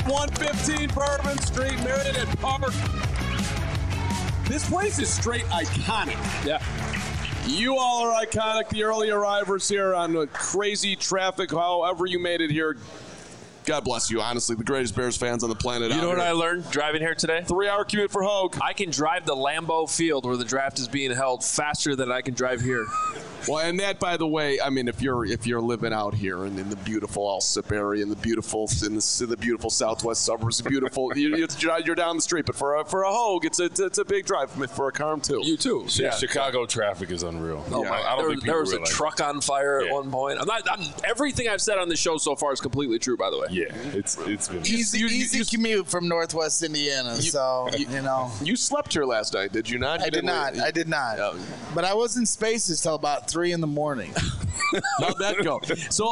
115 Bourbon Street, Meriden Park. This place is straight iconic. Yeah. You all are iconic, the early arrivers here on the crazy traffic, however you made it here. God bless you, honestly, the greatest Bears fans on the planet. You know what I learned driving here today? 3-hour commute for Hogue. I can drive to Lambeau Field where the draft is being held faster than I can drive here. Well, and that, by the way, I mean, if you're living out here in the beautiful Alsip area, in the beautiful southwest suburbs, beautiful, you're down the street. But for a Hogue, it's a big drive for a Carm too. You too. Yeah. Chicago traffic is unreal. Oh, yeah. I don't think there was a truck on fire at one point. Everything I've said on the show so far is completely true, by the way. Yeah, it's been easy commute from Northwest Indiana. You slept here last night, did you not? I did not. Yeah. But I was in Spaces till about 3 a.m. How'd that go? So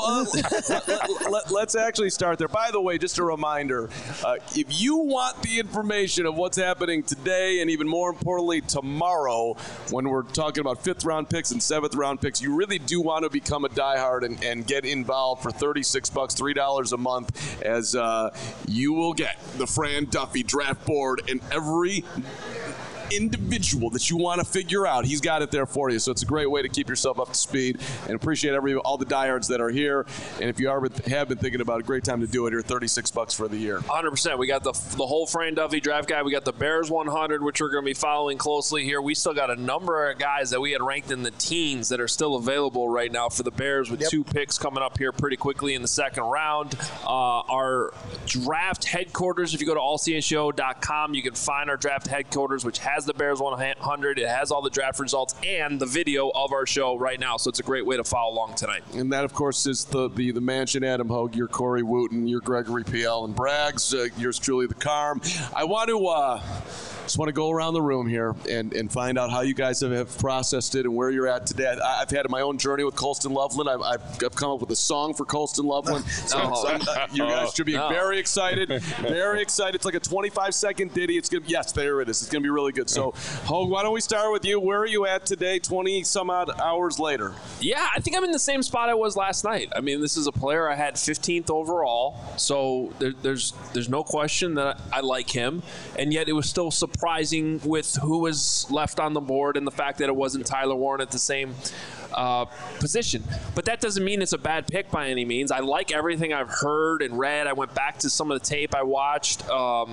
let's actually start there. By the way, just a reminder, if you want the information of what's happening today and even more importantly tomorrow when we're talking about 5th-round picks and 7th-round picks, you really do want to become a diehard and get involved for $36, $3 a month, as you will get the Fran Duffy draft board and every individual that you want to figure out, he's got it there for you. So it's a great way to keep yourself up to speed, and appreciate all the diehards that are here. And if you have been thinking about a great time to do it here, $36 for the year. 100%. We got the whole Fran Duffy draft guide. We got the Bears 100, which we're going to be following closely here. We still got a number of guys that we had ranked in the teens that are still available right now for the Bears, with 2 picks coming up here pretty quickly in the second round. Our draft headquarters, if you go to allcshow.com, you can find our draft headquarters, which has the Bears 100. It has all the draft results and the video of our show right now, so it's a great way to follow along tonight. And that, of course, is the mansion. Adam Hogue, your Corey Wooten, your Gregory P.L. and Braggs, yours truly, the Carm. I want to just want to go around the room here and find out how you guys have processed it and where you're at today. I've had my own journey with Colston Loveland. I've come up with a song for Colston Loveland. You guys should be very excited. Very excited. It's like a 25-second ditty. It's good. Yes, there it is. It's going to be really good. So, Hogue, why don't we start with you? Where are you at today, 20-some-odd hours later? Yeah, I think I'm in the same spot I was last night. I mean, this is a player I had 15th overall, so there's no question that I like him, and yet it was still surprising with who was left on the board and the fact that it wasn't Tyler Warren at the same position. But that doesn't mean it's a bad pick by any means. I like everything I've heard and read. I went back to some of the tape I watched.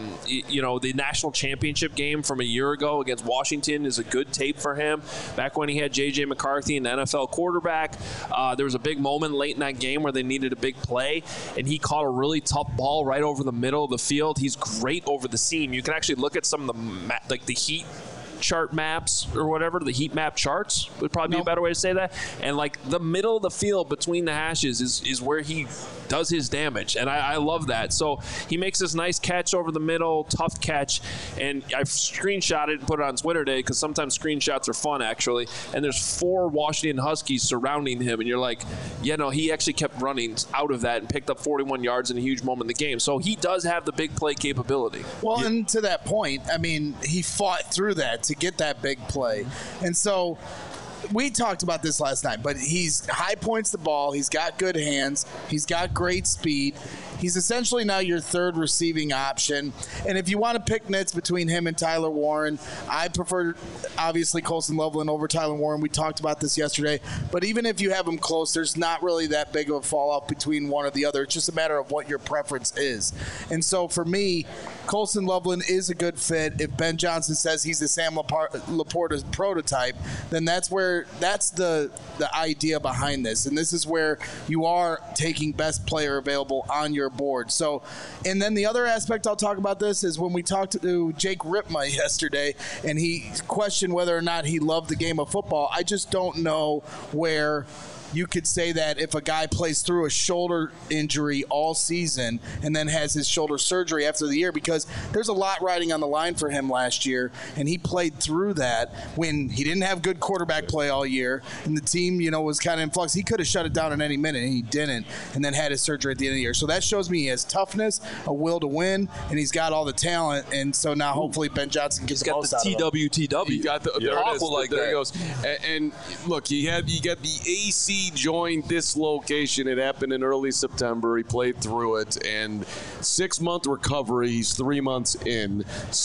The national championship game from a year ago against Washington is a good tape for him. Back when he had J.J. McCarthy, an NFL quarterback, there was a big moment late in that game where they needed a big play, and he caught a really tough ball right over the middle of the field. He's great over the seam. You can actually look at some of the heat chart maps or whatever, the heat map charts would probably be a better way to say that. And like the middle of the field between the hashes is where he does his damage. And I love that. So he makes this nice catch over the middle, tough catch. And I've screenshot it and put it on Twitter today because sometimes screenshots are fun actually. And there's 4 Washington Huskies surrounding him. And you're like, he actually kept running out of that and picked up 41 yards in a huge moment in the game. So he does have the big play capability. Well, and to that point, I mean, he fought through that to get that big play. And so we talked about this last night, but he's high points the ball. He's got good hands. He's got great speed. He's essentially now your third receiving option. And if you want to pick nits between him and Tyler Warren, I prefer, obviously, Colston Loveland over Tyler Warren. We talked about this yesterday. But even if you have them close, there's not really that big of a fall-off between one or the other. It's just a matter of what your preference is. And so for me, Colston Loveland is a good fit. If Ben Johnson says he's the Sam Laporta prototype, then that's the idea behind this. And this is where you are taking best player available on your board. So, and then the other aspect I'll talk about this is when we talked to Jake Ripma yesterday, and he questioned whether or not he loved the game of football. I just don't know where you could say that if a guy plays through a shoulder injury all season and then has his shoulder surgery after the year, because there's a lot riding on the line for him last year, and he played through that when he didn't have good quarterback play all year, and the team, was kind of in flux. He could have shut it down at any minute, and he didn't, and then had his surgery at the end of the year. So that shows me he has toughness, a will to win, and he's got all the talent, and so now hopefully Ben Johnson gets the most out of him. TWTW. He got the awful like there that. He goes. And look, you got the AC AC joined this location. It happened in early September. He played through it, and 6-month recovery. He's 3 months in.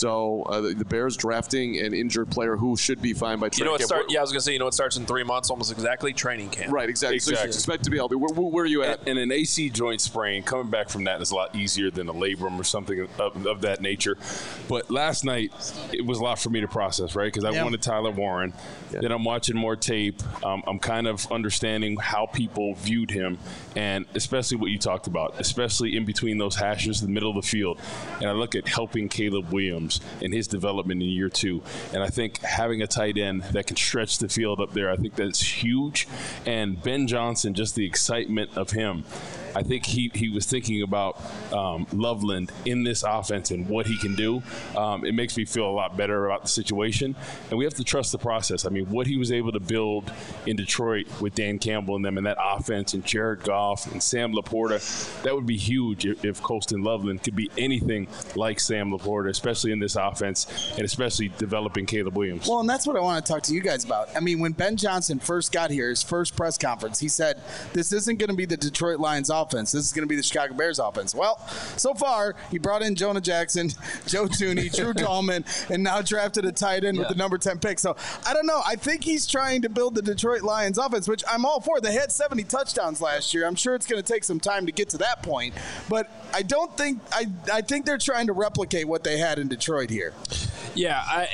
So the Bears drafting an injured player who should be fine by training camp. I was going to say, it starts in 3 months, almost exactly, training camp. Right, exactly. So you expect to be healthy. Where are you at? And an AC joint sprain, coming back from that is a lot easier than a labrum or something of that nature. But last night, it was a lot for me to process, right? Because I wanted Tyler Warren. Yeah. Then I'm watching more tape. I'm kind of understanding how people viewed him, and especially what you talked about, especially in between those hashes, the middle of the field. And I look at helping Caleb Williams and his development in year 2. And I think having a tight end that can stretch the field up there, I think that's huge. And Ben Johnson, just the excitement of him. I think he was thinking about Loveland in this offense and what he can do. It makes me feel a lot better about the situation. And we have to trust the process. I mean, what he was able to build in Detroit with Dan Campbell and them and that offense and Jared Goff and Sam Laporta, that would be huge if Colston Loveland could be anything like Sam Laporta, especially in this offense and especially developing Caleb Williams. Well, and that's what I want to talk to you guys about. I mean, when Ben Johnson first got here, his first press conference, he said, this isn't going to be the Detroit Lions offense. This is going to be the Chicago Bears offense. Well, so far, he brought in Jonah Jackson, Joe Thuney, Drew Tallman, and now drafted a tight end with the number 10 pick. So, I don't know. I think he's trying to build the Detroit Lions offense, which I'm all for. They had 70 touchdowns last year. I'm sure it's going to take some time to get to that point. But I don't think – I think they're trying to replicate what they had in Detroit here. Yeah,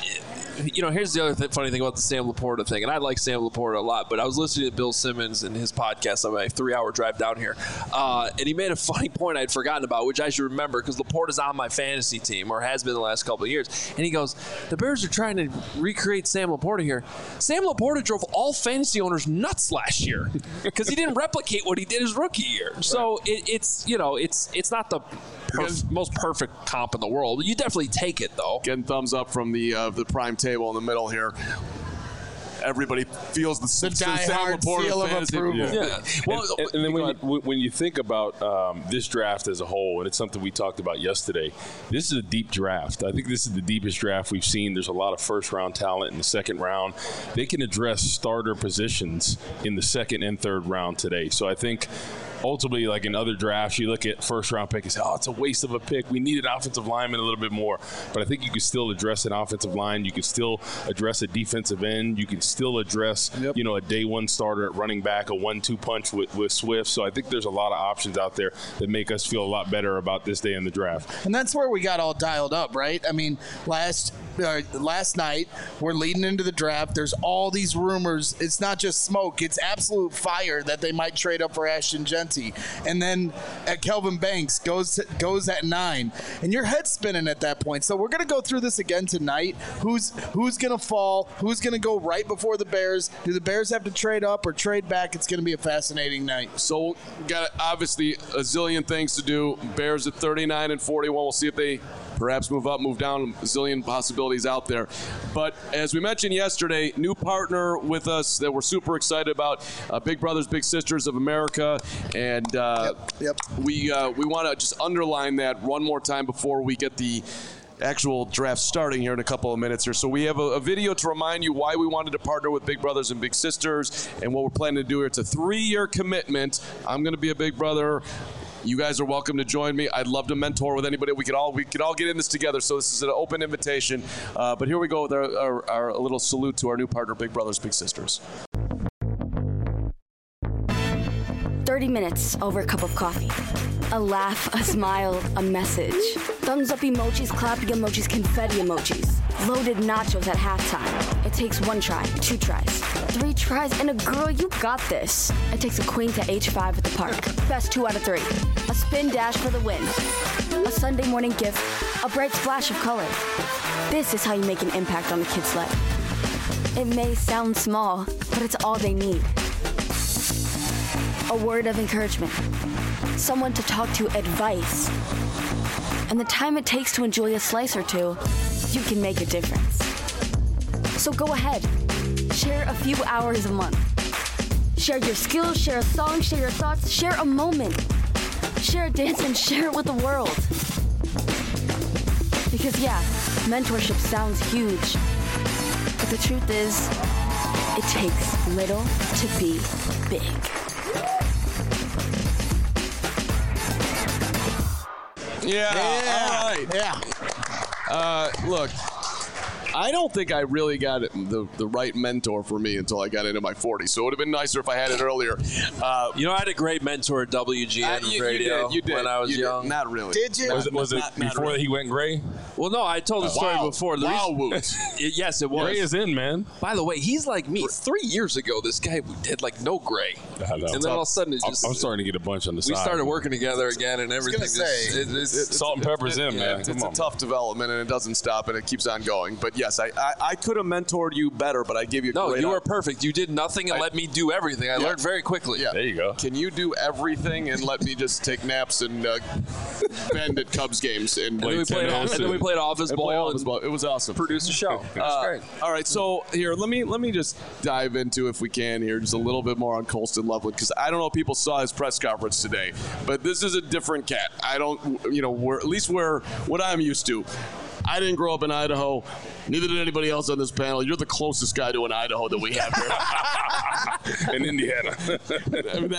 here's the other funny thing about the Sam Laporta thing, and I like Sam Laporta a lot, but I was listening to Bill Simmons and his podcast on my 3-hour drive down here, and he made a funny point I had forgotten about, which I should remember because Laporta's on my fantasy team, or has been the last couple of years, and he goes, the Bears are trying to recreate Sam Laporta here. Sam Laporta drove all fantasy owners nuts last year because he didn't replicate what he did his rookie year. Right. So it's not the most perfect comp in the world. You definitely take it, though. Getting thumbs up from the prime table in the middle here. Everybody feels the die-hard seal of approval. Yeah. Well, and then when you think about this draft as a whole, and it's something we talked about yesterday, this is a deep draft. I think this is the deepest draft we've seen. There's a lot of first-round talent in the second round. They can address starter positions in the second and third round today. So I think ultimately, like in other drafts, you look at first-round pick and say, it's a waste of a pick. We need an offensive lineman a little bit more. But I think you can still address an offensive line. You can still address a defensive end. You can still address, a day one starter at running back, a 1-2 punch with Swift. So I think there's a lot of options out there that make us feel a lot better about this day in the draft. And that's where we got all dialed up, right? I mean, last night, we're leading into the draft. There's all these rumors. It's not just smoke. It's absolute fire that they might trade up for Ashton Jeanty. And then Kelvin Banks goes at 9. And your head's spinning at that point. So we're going to go through this again tonight. Who's going to fall? Who's going to go right before the Bears? Do the Bears have to trade up or trade back? It's going to be a fascinating night. So got obviously a zillion things to do. Bears at 39 and 41. We'll see if they perhaps move up, move down. A zillion possibilities out there. But as we mentioned yesterday, new partner with us that we're super excited about, Big Brothers Big Sisters of America. And we want to just underline that one more time before we get the actual draft starting here in a couple of minutes here. So we have a video to remind you why we wanted to partner with Big Brothers and Big Sisters and what we're planning to do here. It's a 3-year commitment. I'm going to be a Big Brother. You guys are welcome to join me. I'd love to mentor with anybody. We could all get in this together. So this is an open invitation. But here we go with our little salute to our new partner, Big Brothers Big Sisters. 30 minutes over a cup of coffee. A laugh, a smile, a message. Thumbs up emojis, clapping emojis, confetti emojis. Loaded nachos at halftime. It takes 1 try, 2 tries, 3 tries, and a girl, you got this. It takes a queen to H5 at the park. Best 2 out of 3. A spin dash for the win. A Sunday morning gift. A bright splash of color. This is how you make an impact on a kid's life. It may sound small, but it's all they need. A word of encouragement. Someone to talk to, advice. And the time it takes to enjoy a slice or two, you can make a difference. So go ahead. Share a few hours a month. Share your skills, share a song, share your thoughts, share a moment. Share a dance and share it with the world. Because mentorship sounds huge. But the truth is, It takes little to be big. Yeah. All right. Yeah. Look, I don't think I really got the right mentor for me until I got into my 40s. So it would have been nicer if I had it earlier. I had a great mentor at WGN radio you did. when I was young. Not really. Did you? Was it before really. he went gray? Well, no, I told the story before. Yes, it was. Gray is in, man. By the way, he's like me. 3 years ago, this guy had like no gray. I know. And then all of a sudden, I'm starting to get a bunch on the side. We started working together again and everything. Salt and pepper's in, man. It's a tough development, and it doesn't stop, and it keeps on going. But yes, I could have mentored you better, but I gave you you were perfect. You did nothing and let me do everything. I learned very quickly. Yeah. There you go. Can you do everything and let me just take naps and bend at Cubs games? And then we played office ball. It was awesome. Produced a show. That's great. All right, so here, let me just dive into, if we can here, just a little bit more on Colston Loveland, because I don't know if people saw his press conference today, but this is a different cat. I don't, we're what I'm used to. I didn't grow up in Idaho. Neither did anybody else on this panel. You're the closest guy to an Idaho that we have here. In Indiana. I mean,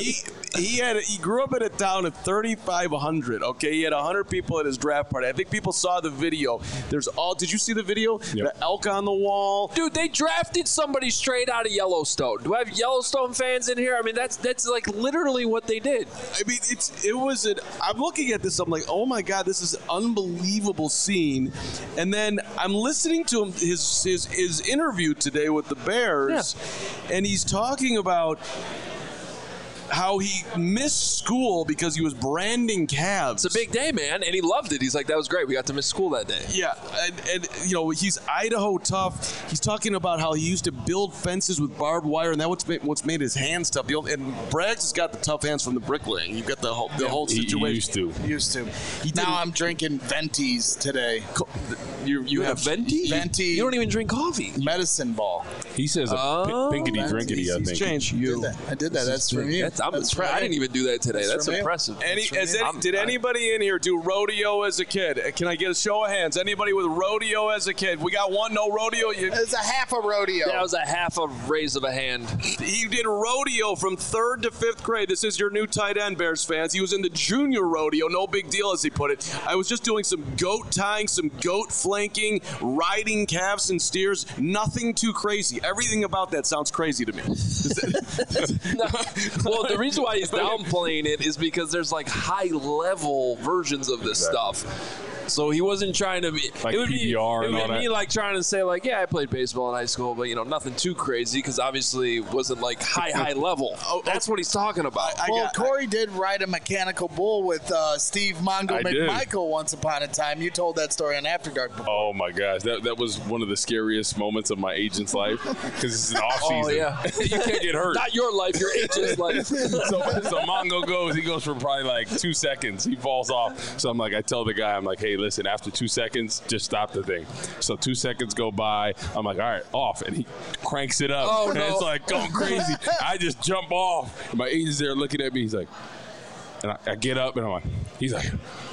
he grew up in a town of 3,500. Okay, he had 100 people at his draft party. I think people saw the video. Did you see the video? Yep. The elk on the wall. Dude, they drafted somebody straight out of Yellowstone. Do I have Yellowstone fans in here? I mean, that's like literally what they did. I mean, I'm looking at this. I'm like, oh my God, this is an unbelievable scene. And then I'm listening to him, his interview today with the Bears, and he's talking about how he missed school because he was branding calves. It's a big day, man, and he loved it. He's like, that was great. We got to miss school that day. Yeah, and he's Idaho tough. He's talking about how he used to build fences with barbed wire, and that's what's made his hands tough. And Braggs has got the tough hands from the bricklaying. You've got the whole situation. He used to. Now I'm drinking Ventis today. You have Venti? Venti. You don't even drink coffee. Medicine ball. He says pinkety drinkety, I think. Changed. I did that. That's from you. I'm impressed. I didn't even do that today. That's impressive. Did anybody in here do rodeo as a kid? Can I get a show of hands? Anybody with rodeo as a kid? We got one, no rodeo. It was a half a rodeo. That was a half a raise of a hand. He did rodeo from 3rd to 5th grade. This is your new tight end, Bears fans. He was in the junior rodeo. No big deal, as he put it. I was just doing some goat tying, some goat flanking, riding calves and steers. Nothing too crazy. Everything about that sounds crazy to me. Well, the reason why he's downplaying it is because there's like high-level versions of this stuff. So he wasn't trying to be like it would PBR be, and it all would be that. like trying to say like, yeah, I played baseball in high school, but nothing too crazy because obviously it wasn't like high level. That's what he's talking about. Corey did ride a mechanical bull with Steve Mongo McMichael once upon a time. You told that story on After Dark before. Oh my gosh, that was one of the scariest moments of my agent's life because it's an off season. Oh yeah, you can't get hurt. Not your life, your agent's life. So Mongo he goes for probably like 2 seconds. He falls off. So I tell the guy, I'm like, hey, listen, after 2 seconds, just stop the thing. So 2 seconds go by. I'm like, all right, off. And he cranks it up. Oh, and no. it's like going crazy. I just jump off. And my agent's there looking at me. He's like, and I get up and I'm like, he's like,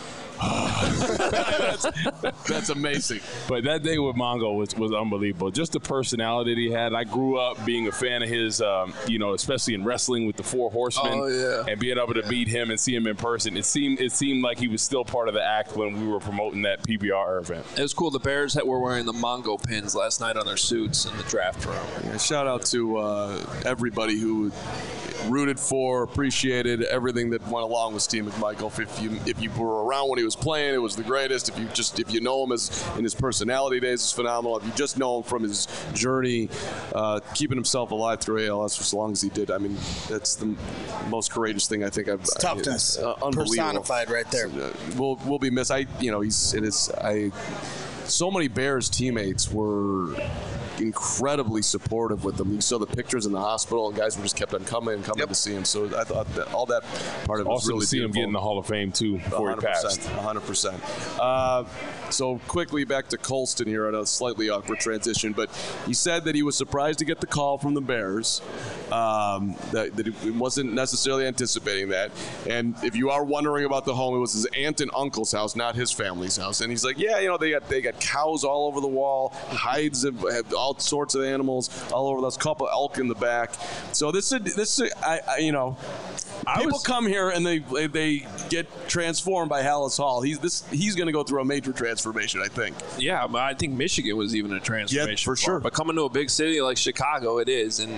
That's amazing. But that day with Mongo was unbelievable. Just the personality that he had. I grew up being a fan of his, especially in wrestling with the Four Horsemen, and being able to meet him and see him in person. It seemed like he was still part of the act when we were promoting that PBR event. It was cool. The Bears were wearing the Mongo pins last night on their suits in the draft room. Yeah, shout out to everybody who rooted for, appreciated everything that went along with Steve McMichael. If you were around when he was playing, it was the greatest. If you know him in his personality days, it's phenomenal. If you just know him from his journey, keeping himself alive through ALS for as long as he did, I mean, that's the most courageous thing I think I've. It's toughness, unbelievable. personified right there. We'll be missed. So many Bears teammates were incredibly supportive with them. You saw the pictures in the hospital, and guys were just kept on coming to see him. So I thought that all that part of it was really to see beautiful. him get in the Hall of Fame too before he passed. 100%. So quickly back to Colston here on a slightly awkward transition, but he said that he was surprised to get the call from the Bears. That he wasn't necessarily anticipating that. And if you are wondering about the home, it was his aunt and uncle's house, not his family's house. And he's like, yeah, they got cows all over the wall, hides have all sorts of animals all over. There's a couple elk in the back. So people come here and they get transformed by Hallis Hall. He's going to go through a major transformation, I think. Yeah, but I think Michigan was even a transformation. Yeah, for sure. But coming to a big city like Chicago, it is. And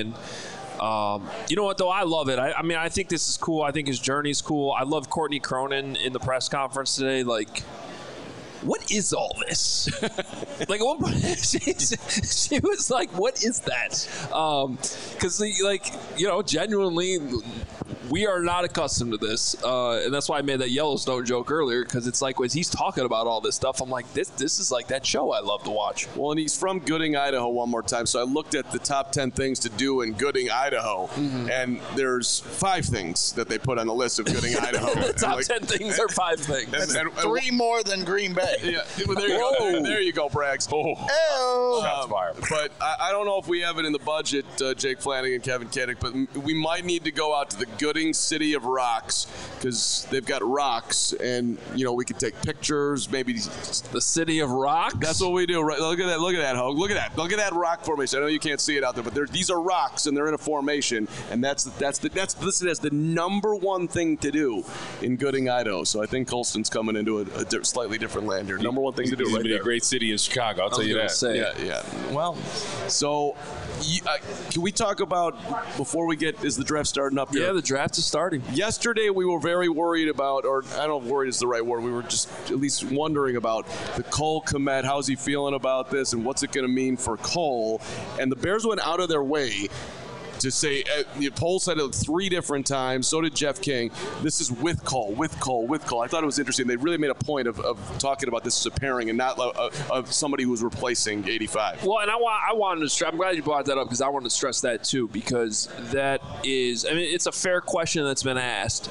you know what, though? I love it. I mean, I think this is cool. I think his journey's cool. I love Courtney Cronin in the press conference today. Like, what is all this? Like, at one point, she was like, what is that? Because, genuinely, we are not accustomed to this. And that's why I made that Yellowstone joke earlier, because it's like when he's talking about all this stuff, I'm like, this is like that show I love to watch. Well, and he's from Gooding, Idaho, one more time. So I looked at the top 10 things to do in Gooding, Idaho, and there's 5 things that they put on the list of Gooding, Idaho. The top 10 things are 5 things. And 3 more than Green Bay. Yeah, well, there you go. There you go, Braggs. Shots fired. But I don't know if we have it in the budget, Jake Flanagan, Kevin Kiddick, but we might need to go out to the Gooding City of Rocks, because they've got rocks, and we could take pictures. Maybe the City of Rocks. That's what we do. Right? Look at that. Look at that, Hogue. Look at that rock formation. I know you can't see it out there, but these are rocks, and they're in a formation, and that's listed as the number 1 thing to do in Gooding, Idaho. So I think Colston's coming into a slightly different land here. Number 1 thing to do. It's right be there. a great city in Chicago. I'll tell you that. Yeah. Well, so can we talk about before we get? Is the draft starting up here? Yeah, the draft is starting. Yesterday we were very worried about, or I don't know if worried is the right word. We were just at least wondering about the Cole Kmet. How's he feeling about this, and what's it going to mean for Cole? And the Bears went out of their way to say, Pohl said it 3 different times, so did Jeff King, this is with Cole. I thought it was interesting. They really made a point of talking about this as a pairing and not of somebody who's replacing 85. Well, and I wanted to stress, I'm glad you brought that up, because I wanted to stress that too, because that is, it's a fair question that's been asked.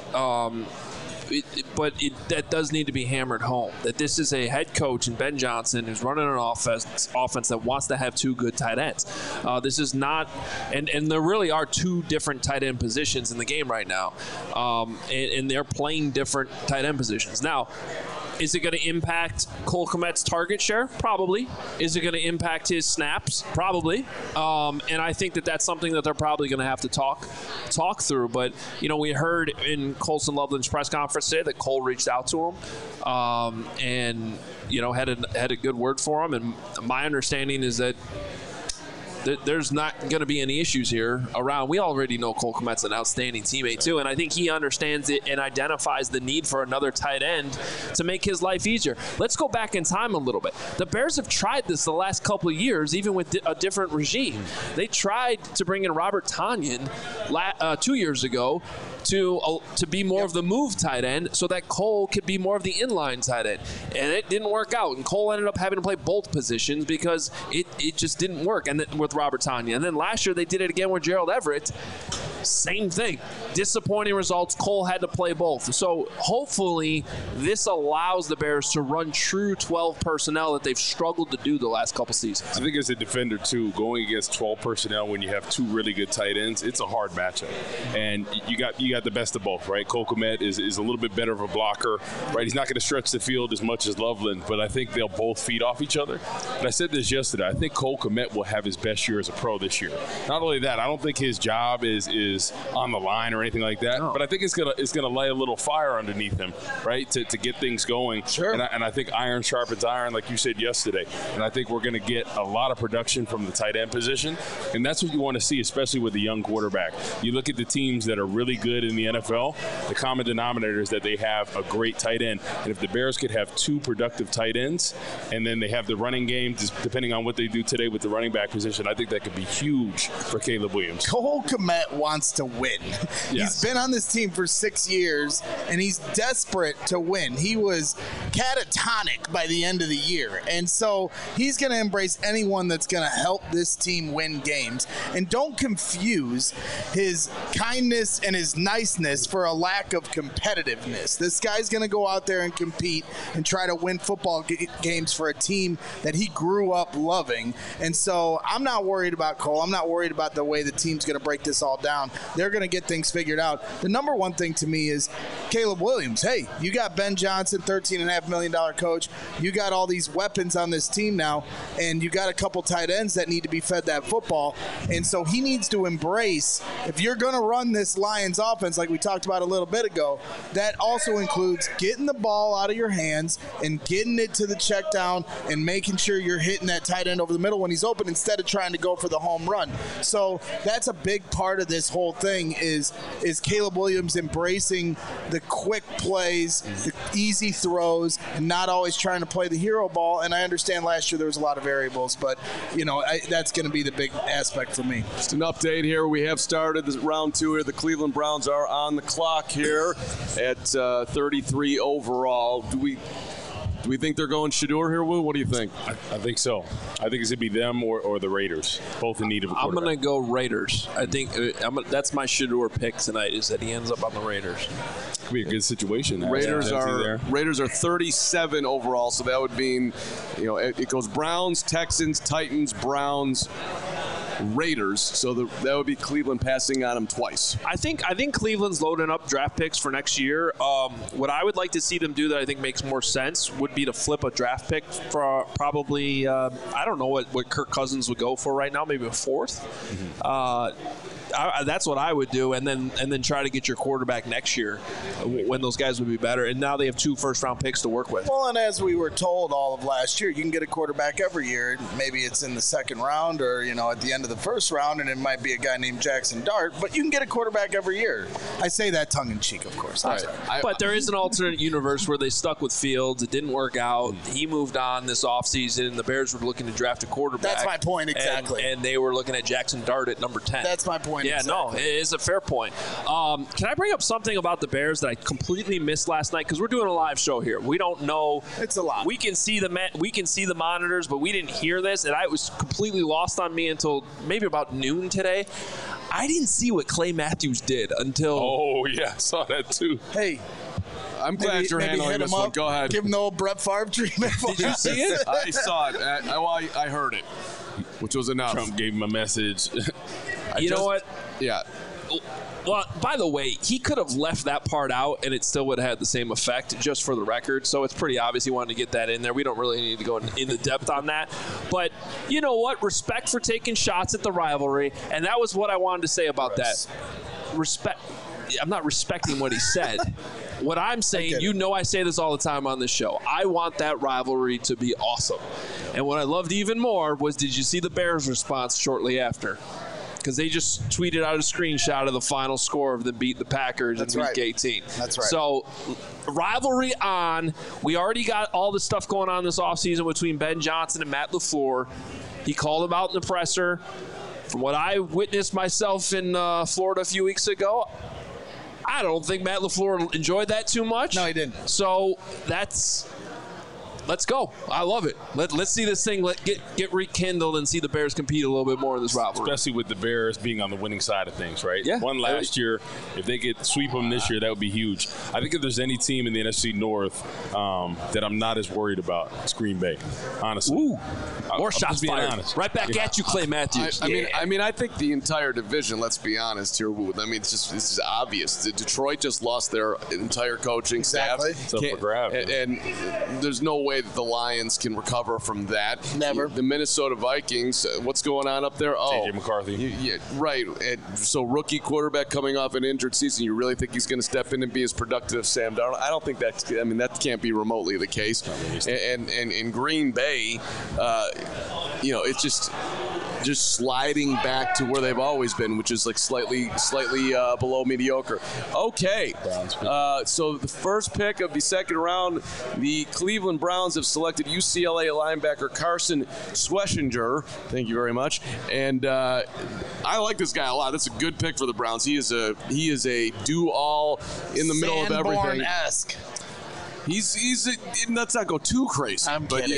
But that does need to be hammered home, that this is a head coach in Ben Johnson who's running an offense that wants to have 2 good tight ends. This is not, and there really are 2 different tight end positions in the game right now, and they're playing different tight end positions. Now, is it going to impact Cole Kmet's target share? Probably. Is it going to impact his snaps? Probably. And I think that's something that they're probably going to have to talk through. But, we heard in Colston Loveland's press conference today that Cole reached out to him and, had a good word for him. And my understanding is that there's not going to be any issues here around. We already know Cole Kmet's an outstanding teammate too, and I think he understands it and identifies the need for another tight end to make his life easier. Let's go back in time a little bit. The Bears have tried this the last couple of years, even with a different regime. They tried to bring in Robert Tonyan 2 years ago to be more of the move tight end so that Cole could be more of the inline tight end. And it didn't work out. And Cole ended up having to play both positions because it just didn't work and with Robert Tonyan. And then last year they did it again with Gerald Everett. Same thing. Disappointing results. Cole had to play both. So hopefully this allows the Bears to run true 12 personnel that they've struggled to do the last couple seasons. I think as a defender, too, going against 12 personnel when you have 2 really good tight ends, it's a hard matchup. And you got the best of both, right? Cole Kmet is a little bit better of a blocker, right? He's not going to stretch the field as much as Loveland, but I think they'll both feed off each other. And I said this yesterday. I think Cole Kmet will have his best year as a pro this year. Not only that, I don't think his job is on the line or anything like that, but I think it's gonna lay a little fire underneath him, right, to get things going. Sure. And I think iron sharpens iron, like you said yesterday. And I think we're going to get a lot of production from the tight end position, and that's what you want to see, especially with a young quarterback. You look at the teams that are really good in the NFL, the common denominator is that they have a great tight end. And if the Bears could have 2 productive tight ends, and then they have the running game, depending on what they do today with the running back position, I think that could be huge for Caleb Williams. Cole Kmet wants to win. Yes. He's been on this team for 6 years, and he's desperate to win. He was catatonic by the end of the year, and so he's going to embrace anyone that's going to help this team win games. And don't confuse his kindness and his niceness for a lack of competitiveness. This guy's going to go out there and compete and try to win football games for a team that he grew up loving. And so I'm not worried about Cole. I'm not worried about the way the team's going to break this all down. They're going to get things figured out. The number one thing to me is Caleb Williams. Hey, you got Ben Johnson, $13.5 $2.5 million coach. You got all these weapons on this team now, and you got a couple tight ends that need to be fed that football. And so he needs to embrace, if you're going to run this Lions offense like we talked about a little bit ago, that also includes getting the ball out of your hands and getting it to the check down and making sure you're hitting that tight end over the middle when he's open instead of trying to go for the home run. So that's a big part of this whole thing is Caleb Williams embracing the quick plays, the easy throws, and not always trying to play the hero ball. And I understand last year there was a lot of variables, but that's going to be the big aspect for me. Just an update here. We have started this round 2 here. The Cleveland Browns are on the clock here at 33 overall. Do we think they're going Shedeur here, Woo? What do you think? I think so. I think it's going to be them or the Raiders, both in need of a quarterback. I'm going to go Raiders. I think that's my Shedeur pick tonight, is that he ends up on the Raiders. Could be a good situation. Raiders are 37 overall, so that would mean, it goes Browns, Texans, Titans, Browns, Raiders. So that would be Cleveland passing on them twice. I think Cleveland's loading up draft picks for next year. What I would like to see them do that I think makes more sense would be to flip a draft pick for probably I don't know what Kirk Cousins would go for right now, maybe a 4th. That's what I would do, and then try to get your quarterback next year when those guys would be better. And now they have 2 first-round picks to work with. Well, and as we were told all of last year, you can get a quarterback every year. Maybe it's in the second round or at the end of the first round, and it might be a guy named Jackson Dart. But you can get a quarterback every year. I say that tongue in cheek, of course. But there is an alternate universe where they stuck with Fields. It didn't work out. He moved on this offseason, and the Bears were looking to draft a quarterback. That's my point, exactly. And they were looking at Jackson Dart at number 10. That's my point. Yeah, exactly. No, it is a fair point. Can I bring up something about the Bears that I completely missed last night? Because we're doing a live show here. We don't know. It's a lot. We can see the monitors, but we didn't hear this, and it was completely lost on me until maybe about noon today. I didn't see what Clay Matthews did until. Oh yeah, I saw that too. Hey. I'm glad you're handling this one. Go ahead. Give him the old Brett Favre treatment. Did you see it? I saw it. I heard it, which was enough. Trump gave him a message. You know what? Yeah. Well, by the way, he could have left that part out and it still would have had the same effect, just for the record. So it's pretty obvious he wanted to get that in there. We don't really need to go into depth on that. But you know what? Respect for taking shots at the rivalry. And that was what I wanted to say about that. Respect. I'm not respecting what he said. What I'm saying, I say this all the time on this show. I want that rivalry to be awesome. And what I loved even more was, did you see the Bears' response shortly after? Because they just tweeted out a screenshot of the final score of them beat the Packers in Week 18. That's right. So, rivalry on. We already got all the stuff going on this offseason between Ben Johnson and Matt LaFleur. He called him out in the presser. From what I witnessed myself in Florida a few weeks ago, I don't think Matt LaFleur enjoyed that too much. No, he didn't. So, let's go. I love it. Let's see this thing get rekindled and see the Bears compete a little bit more in this rivalry. Especially with the Bears being on the winning side of things, right? Yeah. Won last year. If they could sweep them this year, that would be huge. I think if there's any team in the NFC North that I'm not as worried about, it's Green Bay, honestly. Ooh. More shots fired. Honest. Right back at you, Clay Matthews. I mean, I think the entire division, let's be honest here, I mean, this is obvious. Detroit just lost their entire coaching staff. It's up for grabs. And there's no way that the Lions can recover from that. Never. The Minnesota Vikings, what's going on up there? J.J. McCarthy. Yeah, right. And so rookie quarterback coming off an injured season, you really think he's going to step in and be as productive as Sam Darnold? I don't think that can't be remotely the case. And in Green Bay, it's just sliding back to where they've always been, which is like slightly below mediocre. Okay. So the first pick of the second round, the Cleveland Browns have selected UCLA linebacker Carson Schwessinger. Thank you very much. And I like this guy a lot. That's a good pick for the Browns. He is a do-all in the middle of everything. Sanborn-esque. Let's not go too crazy. I'm kidding.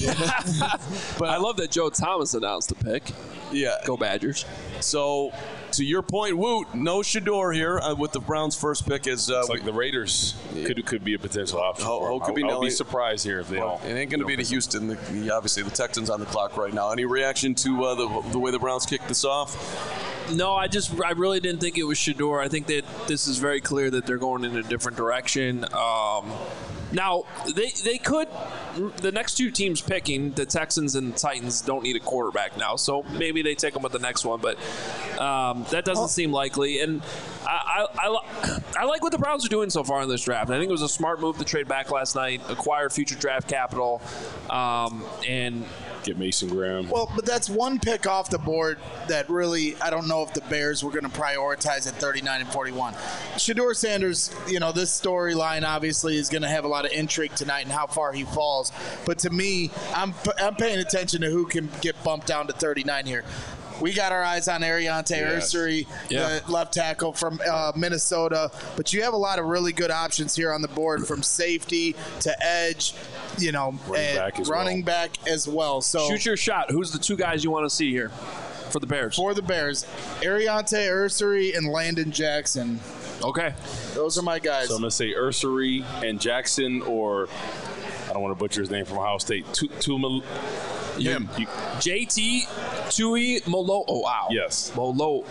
But I love that Joe Thomas announced the pick. Yeah. Go Badgers. So, to your point, Woot, no Shedeur here with the Browns' first pick. It's like the Raiders could be a potential option. I'll be surprised here if they don't. It ain't going to be to Houston. Obviously, the Texans on the clock right now. Any reaction to the way the Browns kicked this off? No, I really didn't think it was Shedeur. I think that this is very clear that they're going in a different direction. Now, they could – the next two teams picking, the Texans and Titans, don't need a quarterback now. So maybe they take them with the next one. But that doesn't seem likely. And I like what the Browns are doing so far in this draft. I think it was a smart move to trade back last night, acquire future draft capital, and – get Mason Graham. Well, but that's one pick off the board that really, I don't know if the Bears were going to prioritize at 39 and 41. Shedeur Sanders, this storyline obviously is going to have a lot of intrigue tonight and how far he falls. But to me, I'm paying attention to who can get bumped down to 39 here. We got our eyes on Ariante Ursary, the left tackle from Minnesota. But you have a lot of really good options here on the board, from safety to edge, running back as well. So shoot your shot. Who's the two guys you want to see here for the Bears? For the Bears, Ariante Ursary and Landon Jackson. Okay. Those are my guys. So I'm going to say Ursary and Jackson, or I don't want to butcher his name, from Ohio State. JT Tui Molo. Oh, wow. Yes. Molo.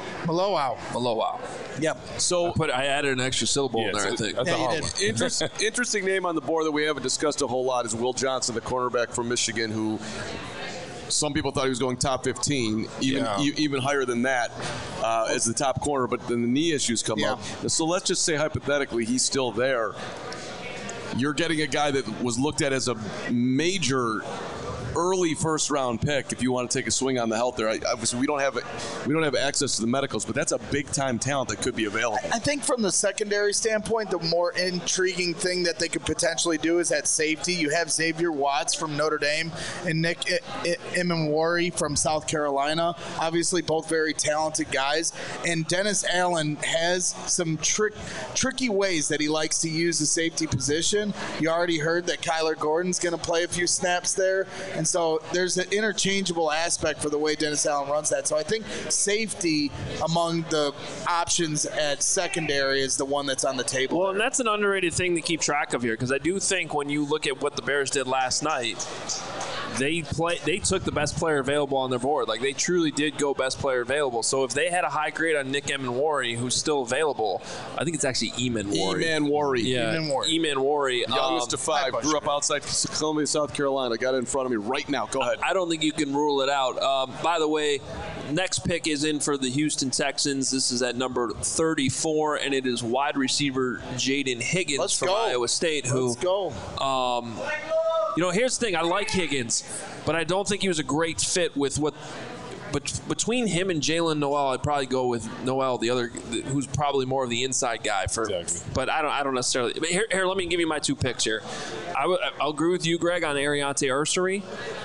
Yep. So I added an extra syllable in there, I think. Interesting name on the board that we haven't discussed a whole lot is Will Johnson, the cornerback from Michigan, who some people thought he was going top 15, even higher than that as the top corner, but then the knee issues come up. So let's just say hypothetically he's still there. You're getting a guy that was looked at as a major early first-round pick if you want to take a swing on the health there. Obviously, we don't have access to the medicals, but that's a big-time talent that could be available. I think from the secondary standpoint, the more intriguing thing that they could potentially do is at safety. You have Xavier Watts from Notre Dame and Nick Imamwari from South Carolina. Obviously, both very talented guys. And Dennis Allen has some tricky ways that he likes to use the safety position. You already heard that Kyler Gordon's going to play a few snaps there. And so there's an interchangeable aspect for the way Dennis Allen runs that. So I think safety among the options at secondary is the one that's on the table. Well, and that's an underrated thing to keep track of here, because I do think when you look at what the Bears did last night, they took the best player available on their board. Like, they truly did go best player available. So if they had a high grade on Nick Emmanwori, who's still available, I think it's actually Emmanwori. Yeah, Emmanwori. Youngest of five, grew up outside Columbia, South Carolina. Got it in front of me right now. Go ahead. I don't think you can rule it out. By the way, next pick is in for the Houston Texans. This is at number 34, and it is wide receiver Jaden Higgins from Iowa State. Let's go. Here's the thing. I like Higgins, but I don't think he was a great fit with what. But between him and Jalen Noel, I'd probably go with Noel, the other, who's probably more of the inside guy. Exactly. But I don't necessarily. But here, let me give you my two picks here. I'll agree with you, Greg, on Ariante Ursary.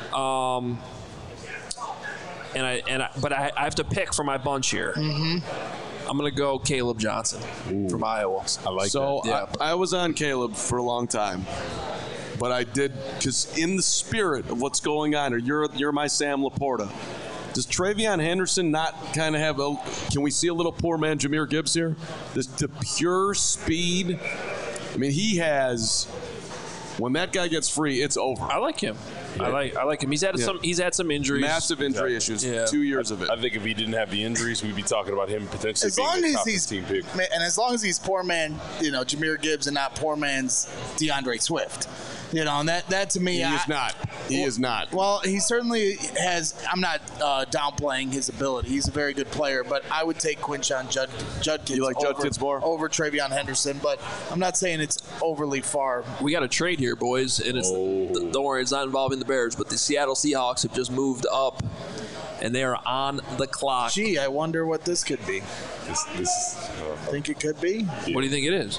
But I have to pick for my bunch here. Mm-hmm. I'm going to go Caleb Johnson from Iowa. I like that. So I was on Caleb for a long time. But I did, because in the spirit of what's going on, or you're my Sam Laporta, does Travion Henderson not kind of have can we see a little poor man Jahmyr Gibbs here? The pure speed. I mean, he has, when that guy gets free, it's over. I like him. Yeah. I like him. He's had some injuries. Massive injury issues. Yeah. 2 years of it. I think if he didn't have the injuries, we'd be talking about him potentially being a top 15 pick. And as long as he's poor man, Jahmyr Gibbs, and not poor man's DeAndre Swift. And that to me, He is not. Well, he certainly has. I'm not downplaying his ability. He's a very good player, but I would take Quinshon Judkins. You like Judkins more over Travion Henderson, but I'm not saying it's overly far. We got a trade here, boys, and don't worry, it's not involving the Bears, but the Seattle Seahawks have just moved up, and they are on the clock. Gee, I wonder what this could be. I think it could be. What do you think it is?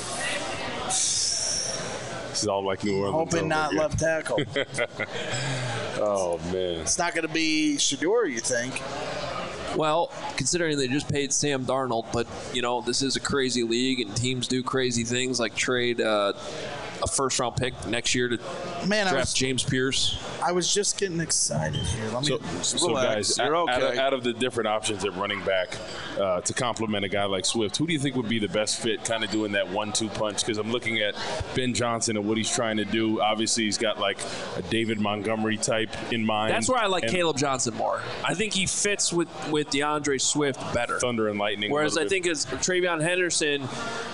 This is all like New Orleans. Hoping not left tackle. Oh, man. It's not going to be Shedeur, you think? Well, considering they just paid Sam Darnold, but, this is a crazy league, and teams do crazy things like trade a first-round pick next year to draft James Pierce. I was just getting excited here. So guys, out of the different options at running back to complement a guy like Swift, who do you think would be the best fit kind of doing that 1-2 punch? Because I'm looking at Ben Johnson and what he's trying to do. Obviously, he's got like a David Montgomery type in mind. That's where I like Caleb Johnson more. I think he fits with DeAndre Swift better. Thunder and lightning. Whereas I think as Travion Henderson,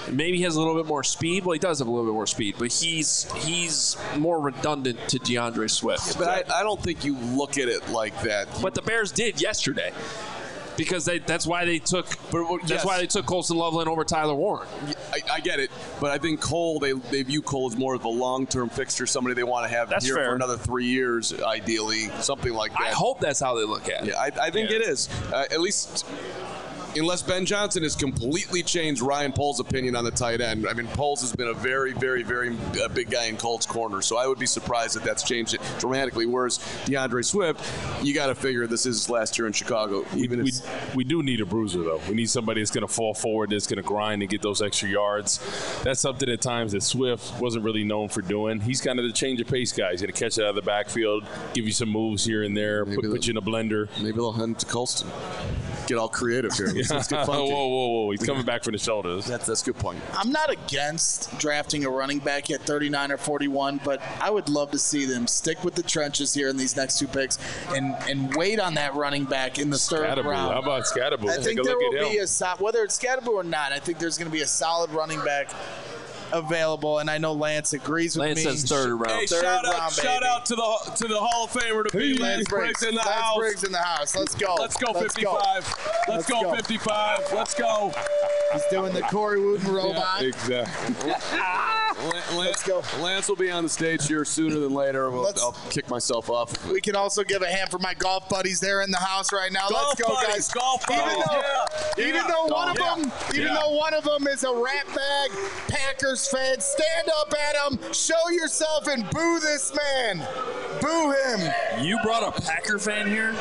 Maybe he has a little bit more speed. Well, he does have a little bit more speed, but he's more redundant to DeAndre Swift. Yeah, but I don't think you look at it like that. But the Bears did yesterday. Because that's why they took Colston Loveland over Tyler Warren. I get it, but I think Cole they view Cole as more of a long-term fixture, somebody they want to have here for another 3 years, ideally, something like that. I hope that's how they look at it. Yeah, I think it is. At least, unless Ben Johnson has completely changed Ryan Poles' opinion on the tight end. I mean, Poles has been a very, very, very big guy in Colt's corner, so I would be surprised if that's changed it dramatically. Whereas DeAndre Swift, you got to figure this is his last year in Chicago. We do need a bruiser, though. We need somebody that's going to fall forward, that's going to grind and get those extra yards. That's something at times that Swift wasn't really known for doing. He's kind of the change of pace guy. He's going to catch it out of the backfield, give you some moves here and there, put you in a blender. Maybe they'll hand to Colston. Get all creative here. Let's get funky. Whoa. He's coming back from the shoulders. That's a good point. I'm not against drafting a running back at 39 or 41, but I would love to see them stick with the trenches here in these next 2 picks and wait on that running back in the third round. How about Scatterbo? I think there will be whether it's Scatterbo or not, I think there's going to be a solid running back available, and I know Lance agrees with me. Lance says third round. Hey, shout out to the Hall of Famer to be Lance Briggs in the house. Lance Briggs in the house. Let's go. Let's go 55. Let's go 55. Let's go. He's doing the Corey Wooten robot. Yeah, exactly. Let's go. Lance will be on the stage here sooner than later. I'll kick myself off. We can also give a hand for my golf buddies. They're in the house right now. Let's go, guys. Golf buddies. Even though one of them is a rat bag Packers fan, stand up, Adam. Show yourself and boo this man. Boo him. You brought a Packer fan here?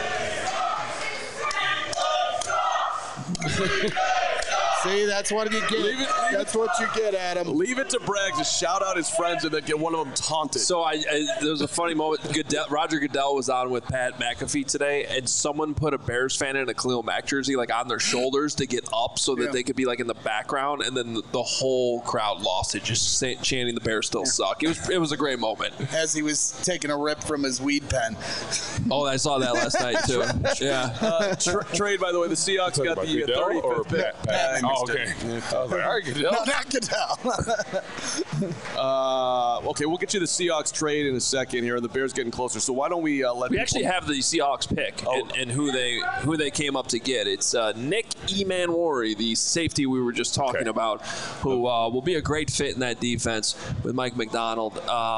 See, that's what you get. That's what you get, Adam. Leave it to Bragg to shout out his friends and then get one of them taunted. So there was a funny moment. Roger Goodell was on with Pat McAfee today, and someone put a Bears fan in a Khalil Mack jersey like on their shoulders to get up so that they could be like in the background, and then the whole crowd lost it, just chanting the Bears still suck. It was a great moment. As he was taking a rip from his weed pen. Oh, I saw that last night too. Yeah. Trade, by the way, the Seahawks got the 35th pick. Oh, okay. I was like, all right, Goodell. No, not Goodell. Okay, we'll get you the Seahawks trade in a second here, and the Bears getting closer. So why don't we let we actually have the Seahawks pick and who they came up to get. It's Nick Emanwari, the safety we were just talking about, who will be a great fit in that defense with Mike McDonald.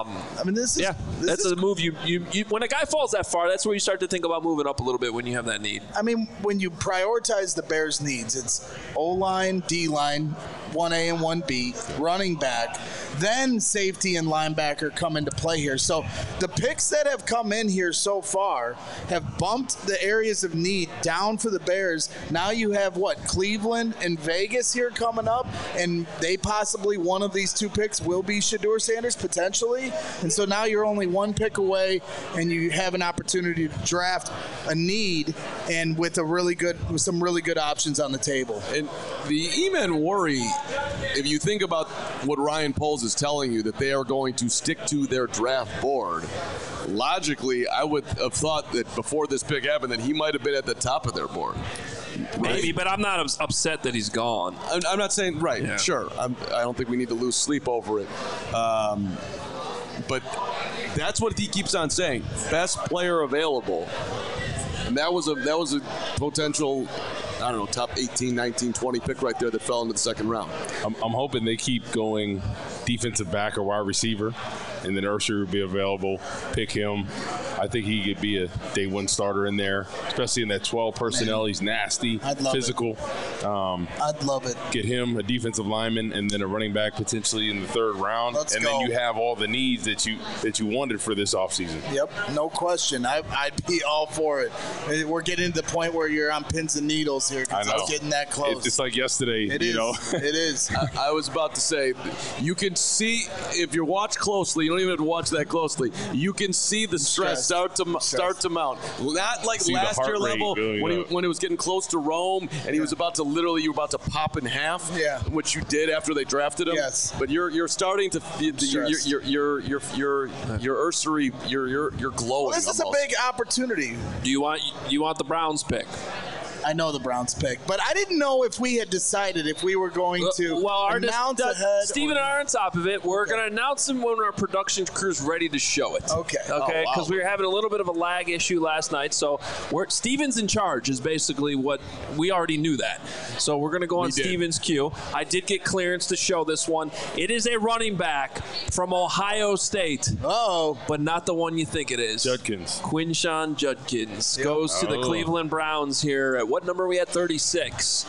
That's a move. You when a guy falls that far, that's where you start to think about moving up a little bit when you have that need. I mean, when you prioritize the Bears' needs, it's O-line, D-line, 1A and 1B, running back, then safety and linebacker come into play here. So the picks that have come in here so far have bumped the areas of need down for the Bears. Now you have, Cleveland and Vegas here coming up, and they possibly, one of these 2 picks will be Shedeur Sanders, potentially. And so now you're only 1 pick away, and you have an opportunity to draft a need, and with some really good options on the table. And the Emanwari, if you think about what Ryan Poles is telling you, that they are going to stick to their draft board, logically, I would have thought that before this pick happened that he might have been at the top of their board. Maybe, but I'm not upset that he's gone. I'm not saying, right, yeah. Sure. I don't think we need to lose sleep over it. But that's what he keeps on saying. Best player available. And that was a potential, I don't know, top 18, 19, 20 pick right there that fell into the second round. I'm hoping they keep going defensive back or wide receiver, and then Ursher will be available. Pick him. I think he could be a day 1 starter in there, especially in that 12 personnel. Man. He's nasty, physical. I'd love it. Get him a defensive lineman and then a running back potentially in the 3rd round. Then you have all the needs that you wanted for this offseason. Yep, no question. I'd be all for it. We're getting to the point where you're on pins and needles here because it's getting that close. It's like yesterday. It is. I was about to say, you can see, if you watch closely, you don't even have to watch that closely, you can see the stress start to mount. Not like last year level when it was getting close to Rome and he was about to you were about to pop in half, which you did after they drafted him. Yes. But you're starting to you're Ursary, you're glowing. Well, this is a big opportunity. Do you want the Browns pick? I know the Browns pick, but I didn't know if we had decided if we were going to announce ahead. Stephen and I are on top of it. We're going to announce them when our production crew's ready to show it. Okay. Because we were having a little bit of a lag issue last night, so Steven's in charge is basically what we already knew that. So we're going to go on Steven's cue. I did get clearance to show this one. It is a running back from Ohio State. But not the one you think it is. Judkins. Quinshon Judkins goes to the Cleveland Browns here. At what number are we at? 36.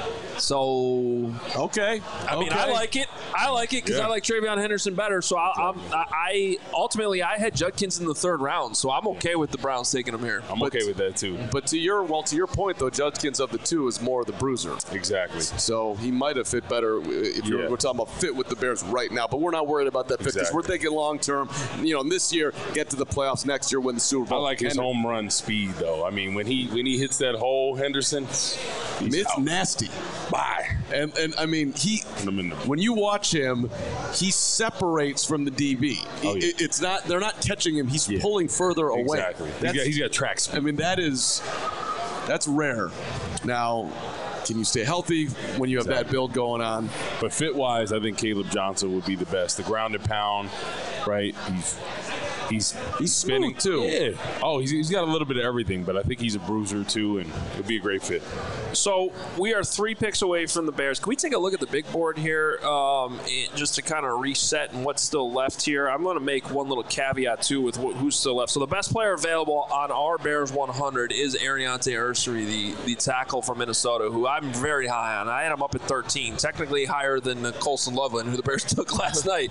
So okay, I mean, I like it. I like it because I like Travion Henderson better. So I ultimately had Judkins in the 3rd round. So I'm okay with the Browns taking him here. I'm okay with that too. But to your point though, Judkins of the 2 is more the bruiser. Exactly. So he might have fit better if we're talking about fit with the Bears right now. But we're not worried about that fit because we're thinking long term. This year, get to the playoffs. Next year, win the Super Bowl. I like his home run speed though. I mean, when he hits that hole, Henderson, it's out. Nasty. Bye. And I mean, when you watch him, he separates from the DB. It's not, they're not catching him. He's pulling further away. Exactly. He's got track speed. I mean, that's rare. Now, can you stay healthy when you have that build going on? But fit-wise, I think Caleb Johnson would be the best. The ground and pound, right? He's spinning too. Yeah. Oh, he's got a little bit of everything, but I think he's a bruiser too, and it'd be a great fit. So we are 3 picks away from the Bears. Can we take a look at the big board here, just to kind of reset and what's still left here? I'm going to make one little caveat too with who's still left. So the best player available on our Bears 100 is Ariante Ursary, the tackle from Minnesota, who I'm very high on. I had him up at 13, technically higher than Colson Loveland, who the Bears took last night.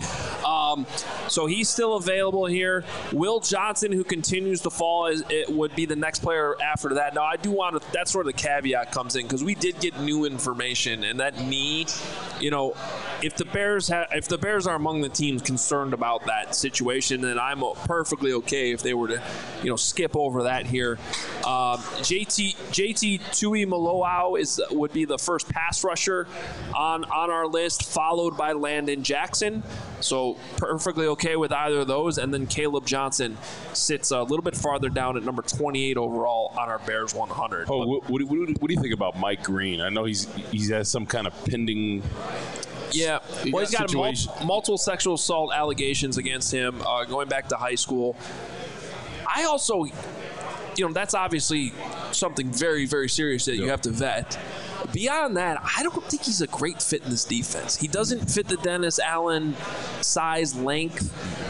So he's still available here. Will Johnson, who continues to fall, would be the next player after that. Now, I do want to – that's where the caveat comes in because we did get new information, and that knee, if the Bears are among the teams concerned about that situation, then I'm perfectly okay if they were to, skip over that here. JT Tuimoloau would be the first pass rusher on our list, followed by Landon Jackson. So perfectly okay with either of those. And then Caleb Johnson sits a little bit farther down at number 28 overall on our Bears 100. Oh, what do you think about Mike Green? I know he has some kind of pending. Yeah, well, he's got multiple sexual assault allegations against him going back to high school. I also, that's obviously something very, very serious that you have to vet. Beyond that, I don't think he's a great fit in this defense. He doesn't fit the Dennis Allen size, length,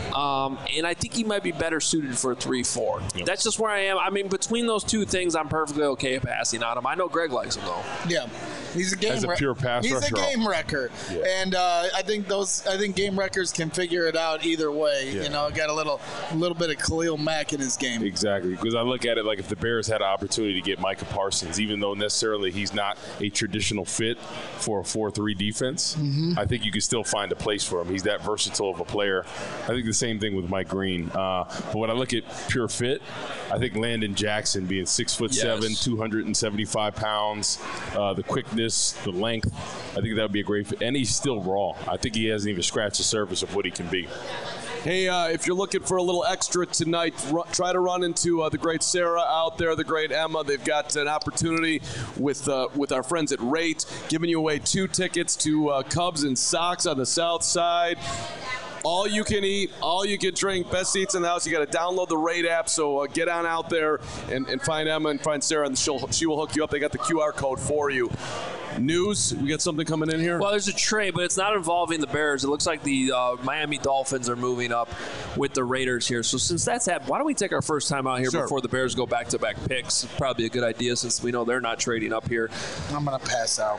and I think he might be better suited for a 3-4. Yep. That's just where I am. I mean, between those two things, I'm perfectly okay passing on him. I know Greg likes him, though. Yeah. He's a game pure pass rusher. He's a game wrecker, and I think game wreckers can figure it out either way. Yeah. Got a little bit of Khalil Mack in his game. Exactly, because I look at it like if the Bears had an opportunity to get Micah Parsons, even though necessarily he's not a traditional fit for a 4-3 defense, I think you could still find a place for him. He's that versatile of a player. I think the same thing with Mike Green. But when I look at pure fit, I think Landon Jackson being 6'7", 275 pounds, the quickness, the length, I think that would be a great fit. And he's still raw. I think he hasn't even scratched the surface of what he can be. Hey, if you're looking for a little extra tonight, try to run into the great Sarah out there, the great Emma. They've got an opportunity with our friends at Rate, giving you away 2 tickets to Cubs and Sox on the south side. All you can eat, all you can drink, best seats in the house. You got to download the Rate app, so get on out there and find Emma and find Sarah, and she will hook you up. They got the QR code for you. News, we got something coming in here? Well, there's a trade, but it's not involving the Bears. It looks like the Miami Dolphins are moving up with the Raiders here. So since that's happened, why don't we take our first time out here before the Bears go back-to-back picks? Probably a good idea since we know they're not trading up here. I'm going to pass out.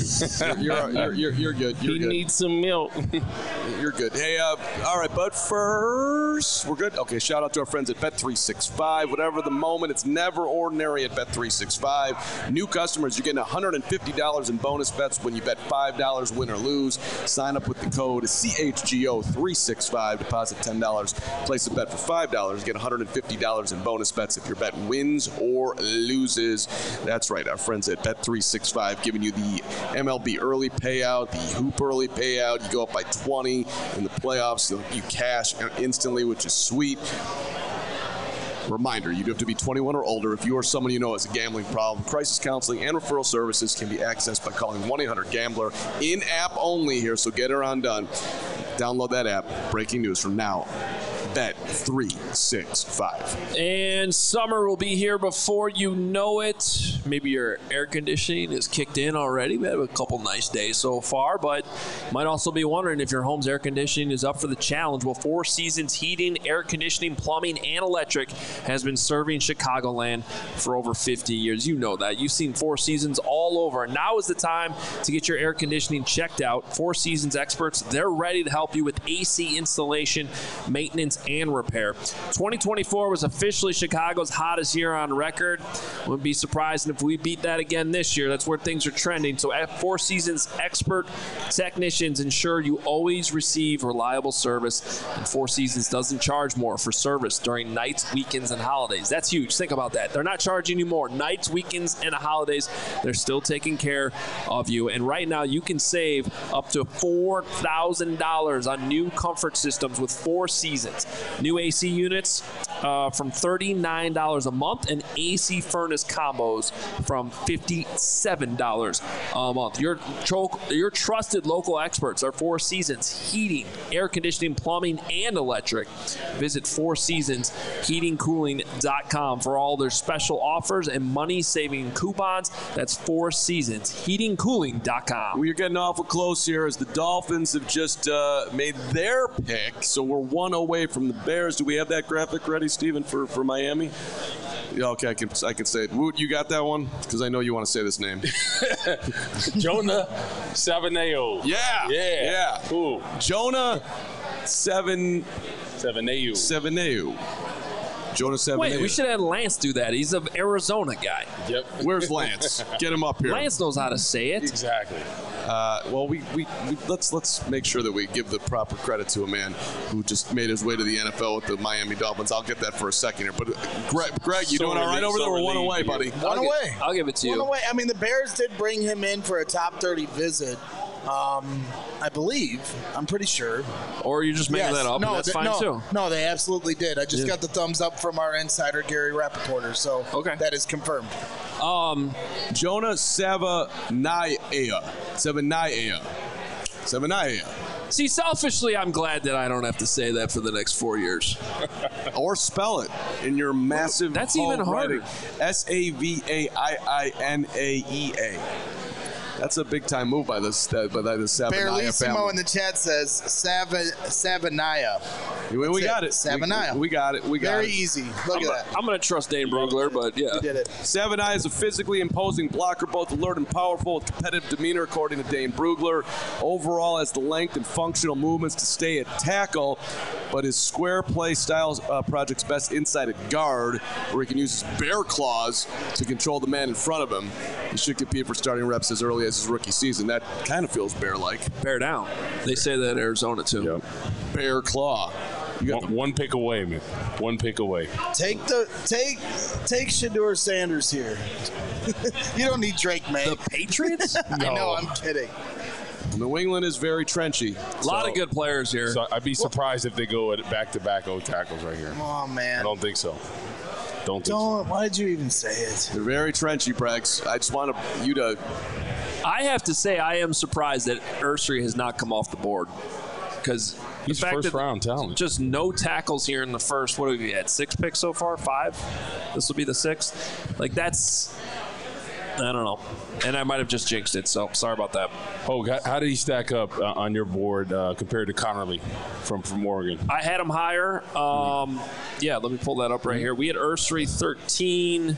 You're good. He needs some milk. You're good. Hey, all right, but first, we're good? Okay, shout out to our friends at Bet365. Whatever the moment, it's never ordinary at Bet365. New customers, you're getting $150 in bonus bets when you bet $5 win or lose. Sign up with the code CHGO365. Deposit $10. Place a bet for $5. Get $150 in bonus bets if your bet wins or loses. That's right, our friends at Bet365 giving you the MLB early payout, the Hoop early payout. You go up by 20 in the playoffs. You cash instantly, which is sweet. Reminder, you do have to be 21 or older if you or someone you know has a gambling problem. Crisis counseling and referral services can be accessed by calling 1-800-GAMBLER. In-app only here, so get her on done. Download that app. Breaking news from now. Bet365. And summer will be here before you know it. Maybe your air conditioning is kicked in already. We had a couple nice days so far, but you might also be wondering if your home's air conditioning is up for the challenge. Well, Four Seasons Heating, Air Conditioning, Plumbing, and Electric has been serving Chicagoland for over 50 years. You know that. You've seen Four Seasons all over. Now is the time to get your air conditioning checked out. Four Seasons experts, they're ready to help you with AC installation, maintenance, and repair. 2024 was officially Chicago's hottest year on record. Wouldn't be surprised if we beat that again this year. That's where things are trending. So at Four Seasons, expert technicians ensure you always receive reliable service, and Four Seasons doesn't charge more for service during nights, weekends, and holidays. That's huge. Think about that. They're not charging you more. Nights, weekends, and holidays, they're still taking care of you. And right now, you can save up to $4,000 on new comfort systems with Four Seasons. New AC units from $39 a month, and AC furnace combos from $57 a month. Your trusted local experts are Four Seasons Heating, Air Conditioning, Plumbing, and Electric. Visit FourSeasonsHeatingCooling.com for all their special offers and money-saving coupons. That's FourSeasonsHeatingCooling.com. We're getting awful close here as the Dolphins have just made their pick, so we're one away from the Bears. Do we have that graphic ready, Steven, for Miami? Yeah, okay, I can say it. Woot, you got that one? Because I know you want to say this name. Jonah Savaiinaea. Yeah. Cool. Jonah Savaiinaea. Jonah Savaiinaea. Wait, we should have Lance do that. He's an Arizona guy. Yep. Where's Lance? Get him up here. Lance knows how to say it. Exactly. Well, we let's make sure that we give the proper credit to a man who just made his way to the NFL with the Miami Dolphins. I'll get that for a second here. But Greg, you doing all right over there? We're one away, buddy. One away. I'll give it to you. One away. I mean, the Bears did bring him in for a top 30 visit. I believe. I'm pretty sure. Or you're just making that up, and that's fine too. No, they absolutely did. I just got the thumbs up from our insider, Gary Rappaporter, so that is confirmed. Jonah Savaiinaea. See, selfishly, I'm glad that I don't have to say that for the next 4 years. Or spell it in your massive That's even harder. Savaiinaea. That's a big-time move by the Savaiinaea Barlissimo family. in the chat says Savaiinaea. We got it. Savaiinaea. We got it. Very easy. Look at that. I'm going to trust Dane Brugler, but yeah. You did it. Savaiinaea is a physically imposing blocker, both alert and powerful, with competitive demeanor, according to Dane Brugler. Overall, has the length and functional movements to stay at tackle, but his square play style projects best inside at guard, where he can use his bear claws to control the man in front of him. He should compete for starting reps as early as his rookie season. That kind of feels bear-like. Bear down. They say that in Arizona, too. Yep. Bear claw. You got One pick away, man. One pick away. Take Shedeur Sanders here. You don't need Drake, man. The Patriots? I know, I'm kidding. New England is very trenchy. A lot of good players here. So I'd be surprised if they go at back-to-back O tackles right here. Oh, man. I don't think so. Why did you even say it? They're very trenchy, Bregs. I just want you to... I have to say I am surprised that Ursary has not come off the board. Because he's first-round talent. Just no tackles here in the first. What have we had? 6 picks so far? 5? This will be the 6th. Like, that's... I don't know. And I might have just jinxed it, so sorry about that. Oh, how did he stack up on your board compared to Connerly from Oregon? I had him higher. Yeah, let me pull that up right here. We had Ursary 13.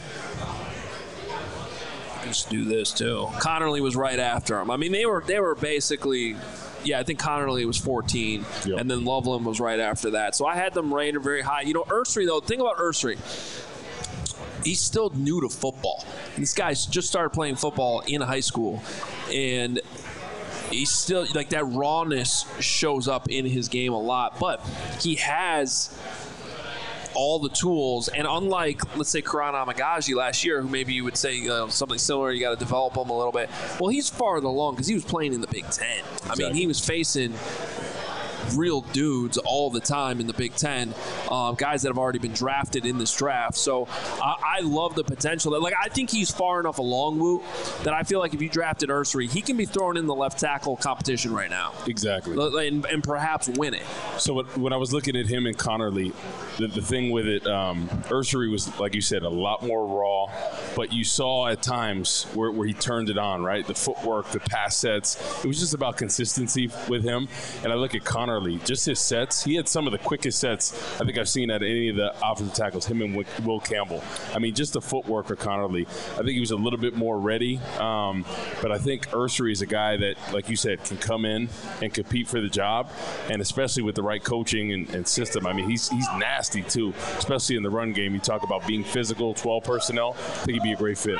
Let's do this, too. Connerly was right after him. I mean, they were basically... Yeah, I think Connerly was 14, and then Loveland was right after that. So I had them rated very high. You know, Ursary, though, think about Ursary. He's still new to football. This guy's just started playing football in high school, and he's still, like, that rawness shows up in his game a lot, but he has all the tools, and unlike, let's say, Karan Amagaji last year, who maybe you would say something similar, you got to develop him a little bit. Well, he's farther along because he was playing in the Big Ten. Exactly. I mean, he was facing real dudes all the time in the Big Ten, guys that have already been drafted in this draft. So I love the potential. Like, I think he's far enough along, Woot, that I feel like if you drafted Ursary, he can be thrown in the left tackle competition right now. Exactly. And perhaps win it. So when I was looking at him and Connerly, the thing with it, Ursary was, like you said, a lot more raw, but you saw at times where he turned it on, right? The footwork, the pass sets. It was just about consistency with him. And I look at Connerly, just his sets. He had some of the quickest sets I think I've seen at any of the offensive tackles, him and Will Campbell. I mean, just the footwork for Connerly. I think he was a little bit more ready. But I think Ursary is a guy that, like you said, can come in and compete for the job. And especially with the right coaching and system. I mean, he's nasty, too, especially in the run game. You talk about being physical, 12 personnel. I think he'd be a great fit.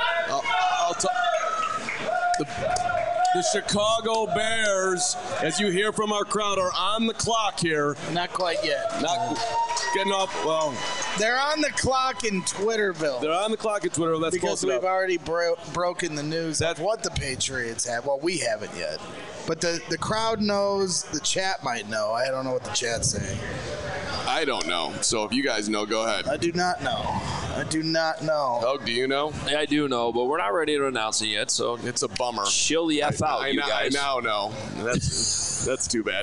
The Chicago Bears, as you hear from our crowd, are on the clock here. Not quite yet. Not getting off. Well, they're on the clock in Twitterville. They're on the clock in Twitterville. That's because we've already broken the news of what the Patriots have. Well, we haven't yet. But the crowd knows. The chat might know. I don't know what the chat's saying. I don't know. So if you guys know, go ahead. I do not know. Oh, do you know? Yeah, I do know, but we're not ready to announce it yet, so it's a bummer. Chill the F out, you guys. I now know. That's too bad.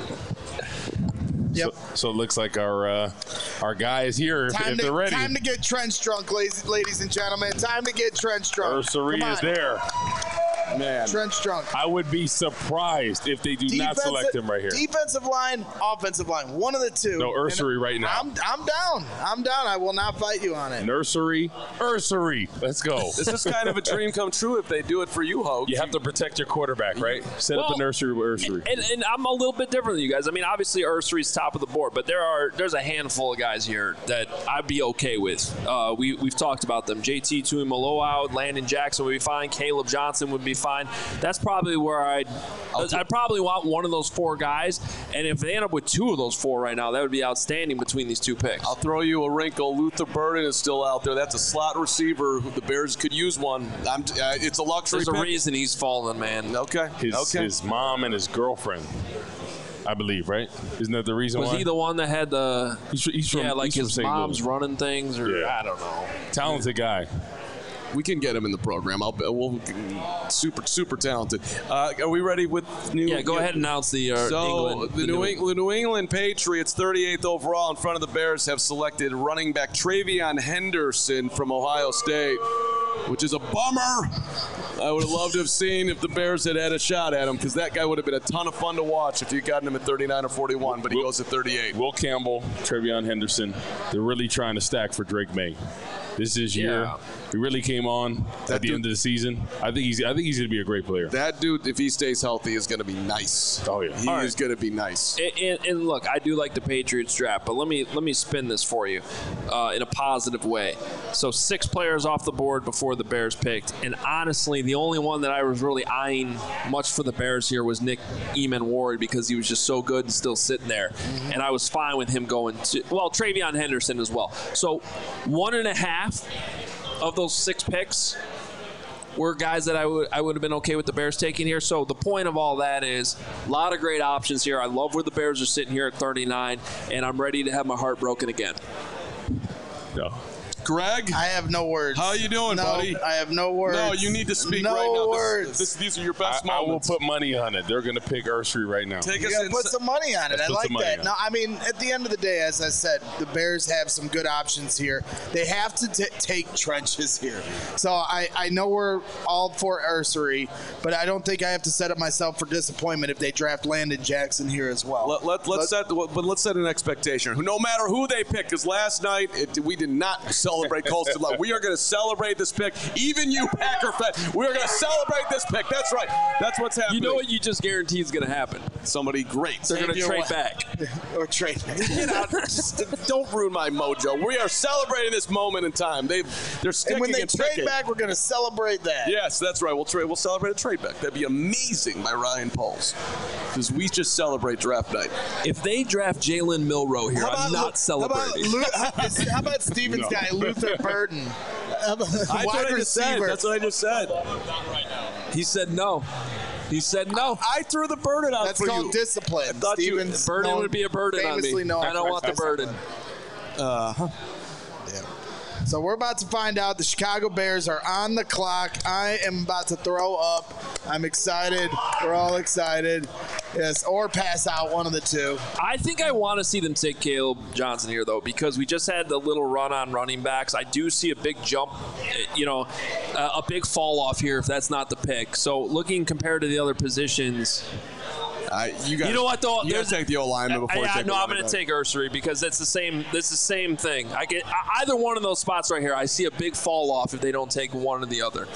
Yep. So it looks like our guy is here if they're ready. Time to get trench drunk, ladies and gentlemen. Time to get trench drunk. Ursary is there. Man, trench drunk. I would be surprised if they do not select him right here. Defensive line, offensive line, one of the two. No, Ursary right now. I'm down. I will not fight you on it. Ursary. Let's go. This is kind of a dream come true if they do it for you, Hogue. You have to protect your quarterback, right? Set up a nursery with Ursary. And I'm a little bit different than you guys. I mean, obviously Ursary's top of the board, but there's a handful of guys here that I'd be okay with. We've talked about them. JT Tuimoloau, Landon Jackson would be fine. Caleb Johnson would be fine. That's probably where I'd probably want one of those four guys. And if they end up with two of those four right now, that would be outstanding between these two picks. I'll throw you a wrinkle. Luther Burden is still out there. That's a slot receiver. The Bears could use one. It's a luxury There's pick. a reason he's falling, man. Okay. His mom and his girlfriend, I believe, right? Isn't that the reason why? Was he the one that had the he's from, his mom's running things? Or I don't know. Talented guy. We can get him in the program. We'll super talented. Are we ready with new? Yeah, go ahead and announce the England. The New England Patriots, 38th overall, in front of the Bears, have selected running back TreVeyon Henderson from Ohio State, which is a bummer. I would have loved to have seen if the Bears had a shot at him, because that guy would have been a ton of fun to watch if you got him at 39 or 41, but he goes at 38. Will Campbell, TreVeyon Henderson, they're really trying to stack for Drake May. This is his year. He really came on at the end of the season. I think he's going to be a great player. That dude, if he stays healthy, is going to be nice. Oh yeah, he is going to be nice. And look, I do like the Patriots draft, but let me spin this for you in a positive way. So 6 players off the board before the Bears picked, and honestly, the only one that I was really eyeing much for the Bears here was Nick Eamon-Ward, because he was just so good and still sitting there, and I was fine with him going to TreVeyon Henderson as well. So 1.5 of those 6 picks were guys that I would have been okay with the Bears taking here. So the point of all that is a lot of great options here. I love where the Bears are sitting here at 39, and I'm ready to have my heart broken again. No. Greg? I have no words. How you doing, buddy? I have no words. No, you need to speak no right now. No words. These are your best I will moments. put money on it. They're going to pick Ursary right now. You got to put some money on it. I like that. No, I mean, at the end of the day, as I said, the Bears have some good options here. They have to take trenches here. So I know we're all for Ursary, but I don't think I have to set up myself for disappointment if they draft Landon Jackson here as well. Let's set an expectation. No matter who they pick, because last night we did not celebrate Colston Love. We are going to celebrate this pick. Even you, Packer fan, we are going to celebrate this pick. That's right. That's what's happening. You know what you just guaranteed is going to happen? Somebody great. They're going to trade back. Or trade back. Get out. Don't ruin my mojo. We are celebrating this moment in time. They're sticking and when they trade picking. back, we're going to celebrate that. Yes, that's right. We'll celebrate a trade back. That'd be amazing by Ryan Pauls, because we just celebrate draft night. If they draft Jalen Milroe here, I'm not celebrating. How about Stevens guy, Luther Burden? That's what I just said. He said no. He said no. I threw the burden out That's for you. called discipline. I thought burden would be a burden on me. I don't want the burden. Yeah. So we're about to find out. The Chicago Bears are on the clock. I am about to throw up. I'm excited. We're all excited. Yes, or pass out, one of the two. I think I want to see them take Caleb Johnson here, though, because we just had the little run on running backs. I do see a big jump, a big fall off here if that's not the pick. So looking compared to the other positions. You know what though? You gotta take the O-lineman before you take the I'm going to take Ursery because it's the same. It's the same thing. I get either one of those spots right here. I see a big fall off if they don't take one or the other.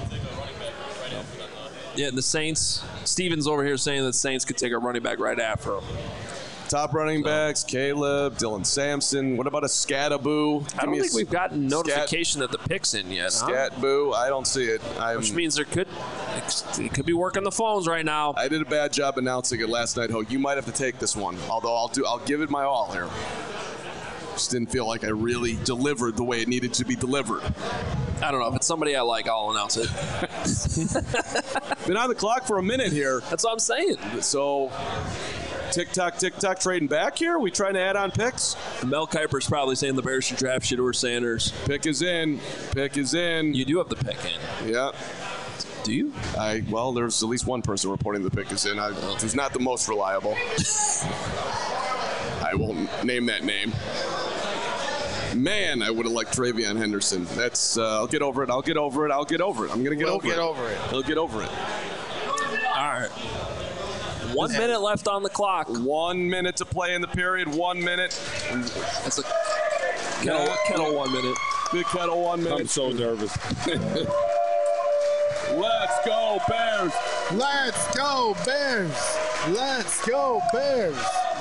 Yeah, and the Saints. Steven's over here saying that Saints could take a running back right after him. Top running backs: Caleb, Dylan Sampson. What about a Scattaboo? I don't think we've gotten notification that the pick's in yet. Scatboo, I don't see it. Which means it could be working the phones right now. I did a bad job announcing it last night, Ho. You might have to take this one. Although I'll give it my all here. Just didn't feel like I really delivered the way it needed to be delivered. I don't know. If it's somebody I like, I'll announce it. Been on the clock for a minute here. That's what I'm saying. So, tick-tock, trading back here? We trying to add on picks? Mel Kiper's probably saying the Bears should draft Shedeur Sanders. Pick is in. You do have the pick in. Yeah. Do you? Well, there's at least one person reporting the pick is in. Who's not the most reliable. I won't name that name. Man, I would have liked Travion Henderson. That's. I'll get over it. I'm gonna get over it. He'll get over it. All right. 1 minute left on the clock. 1 minute to play in the period. 1 minute. That's a kettle 1 minute. Big kettle 1 minute. I'm so nervous. Let's go Bears. Let's go Bears. Let's go Bears.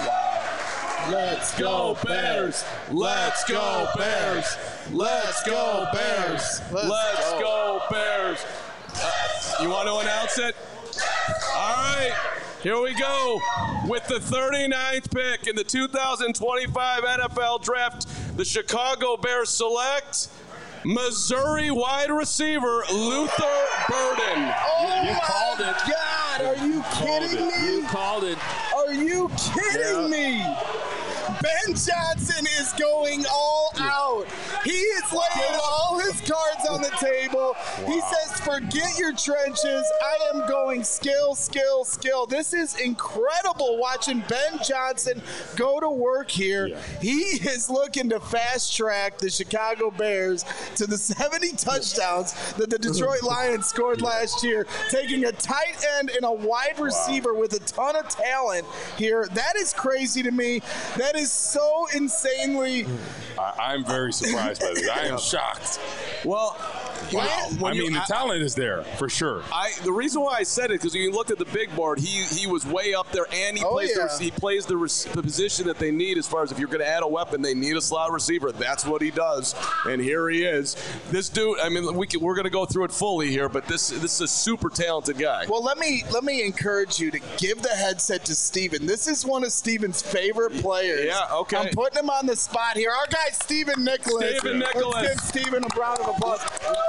Let's go Bears. Let's go Bears. Let's go Bears. Let's go Bears. You want to announce it? All right. Here we go. With the 39th pick in the 2025 NFL Draft, the Chicago Bears select Missouri wide receiver Luther Burden. Oh, you called it. God, are you kidding me? You called it. Are you kidding me? Ben Johnson is going all out. He is laying all his cards on the table. Wow. He says, forget your trenches. I am going skill. This is incredible watching Ben Johnson go to work here. Yeah. He is looking to fast track the Chicago Bears to the 70 touchdowns that the Detroit Lions scored last year, taking a tight end and a wide receiver with a ton of talent here. That is crazy to me. That is so insanely. I'm very surprised by this. I am shocked. Well, wow. The talent is there for sure. The reason why I said it because when you looked at the big board, he was way up there, and he plays the position that they need as far as if you're going to add a weapon, they need a slot receiver. That's what he does, and here he is. This dude. We're going to go through it fully here, but this is a super talented guy. Well, let me encourage you to give the headset to Steven. This is one of Steven's favorite players. Yeah, okay. I'm putting him on the spot here. Our guy, Steven Nicholas. Let's give Steven a round of applause.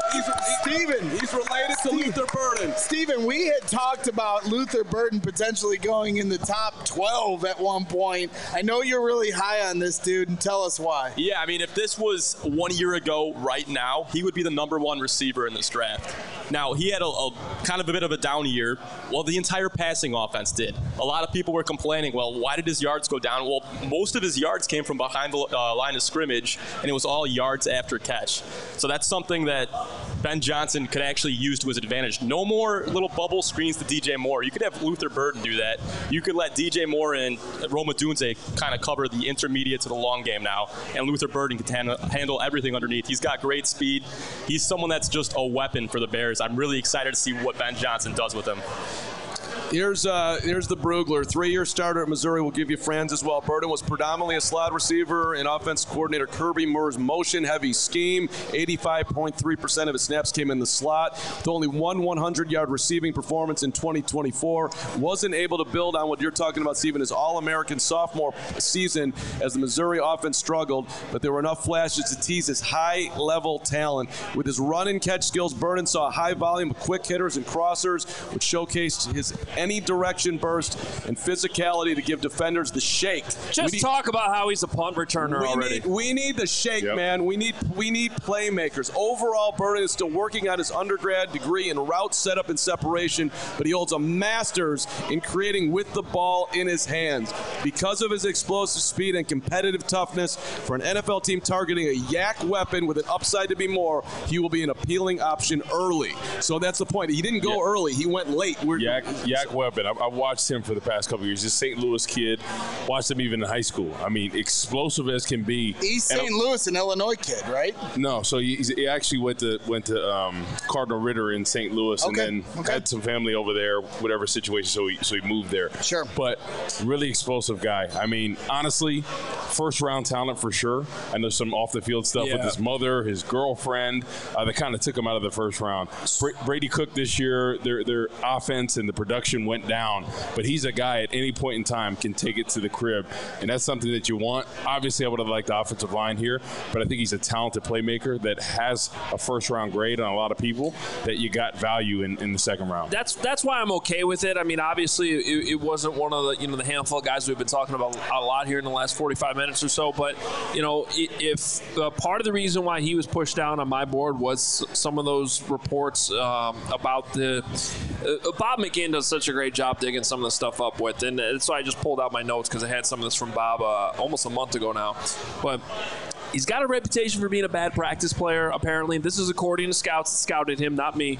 He's related to Luther Burden. Steven, we had talked about Luther Burden potentially going in the top 12 at one point. I know you're really high on this dude, and tell us why. Yeah, if this was 1 year ago right now, he would be the number one receiver in this draft. Now, he had a kind of a bit of a down year. Well, the entire passing offense did. A lot of people were complaining, well, why did his yards go down? Well, most of his yards came from behind the line of scrimmage, and it was all yards after catch. So that's something that Ben Johnson could actually use to his advantage. No more little bubble screens to DJ Moore. You could have Luther Burden do that. You could let DJ Moore and Rome Odunze kind of cover the intermediate to the long game now, and Luther Burden can handle everything underneath. He's got great speed. He's someone that's just a weapon for the Bears. I'm really excited to see what Ben Johnson does with him. Here's the Brugler. 3-year starter at Missouri will give you friends as well. Burden was predominantly a slot receiver and offense coordinator Kirby Murr's motion-heavy scheme. 85.3% of his snaps came in the slot. With only one 100-yard receiving performance in 2024. Wasn't able to build on what you're talking about, Stephen, his All-American sophomore season as the Missouri offense struggled, but there were enough flashes to tease his high-level talent. With his run-and-catch skills, Burden saw a high volume of quick hitters and crossers, which showcased his any-direction burst and physicality to give defenders the shake. Just talk about how he's a punt returner already. We need the shake, man. We need playmakers. Overall, Burden is still working on his undergrad degree in route setup and separation, but he holds a master's in creating with the ball in his hands. Because of his explosive speed and competitive toughness, for an NFL team targeting a yak weapon with an upside to be more, he will be an appealing option early. So that's the point. He didn't go early. He went late. Yak weapon. I watched him for the past couple of years. He's a St. Louis kid. Watched him even in high school. I mean, explosive as can be. He's St. Louis, an Illinois kid, right? No, so he actually went to Cardinal Ritter in St. Louis, and then had some family over there, whatever situation. So he moved there. Sure. But really explosive guy. I mean, honestly, first round talent for sure. I know some off the field stuff with his mother, his girlfriend. That kind of took him out of the first round. Brady Cook this year, their offense and the production went down, but he's a guy at any point in time can take it to the crib, and that's something that you want. Obviously, I would have liked the offensive line here, but I think he's a talented playmaker that has a first-round grade on a lot of people that you got value in the second round. That's why I'm okay with it. I mean, obviously, it wasn't one of the handful of guys we've been talking about a lot here in the last 45 minutes or so, but if part of the reason why he was pushed down on my board was some of those reports about the Bob McGinn does such a great job digging some of the stuff up with, and so I just pulled out my notes because I had some of this from Bob almost a month ago now. But he's got a reputation for being a bad practice player, apparently. This is according to scouts that scouted him, not me.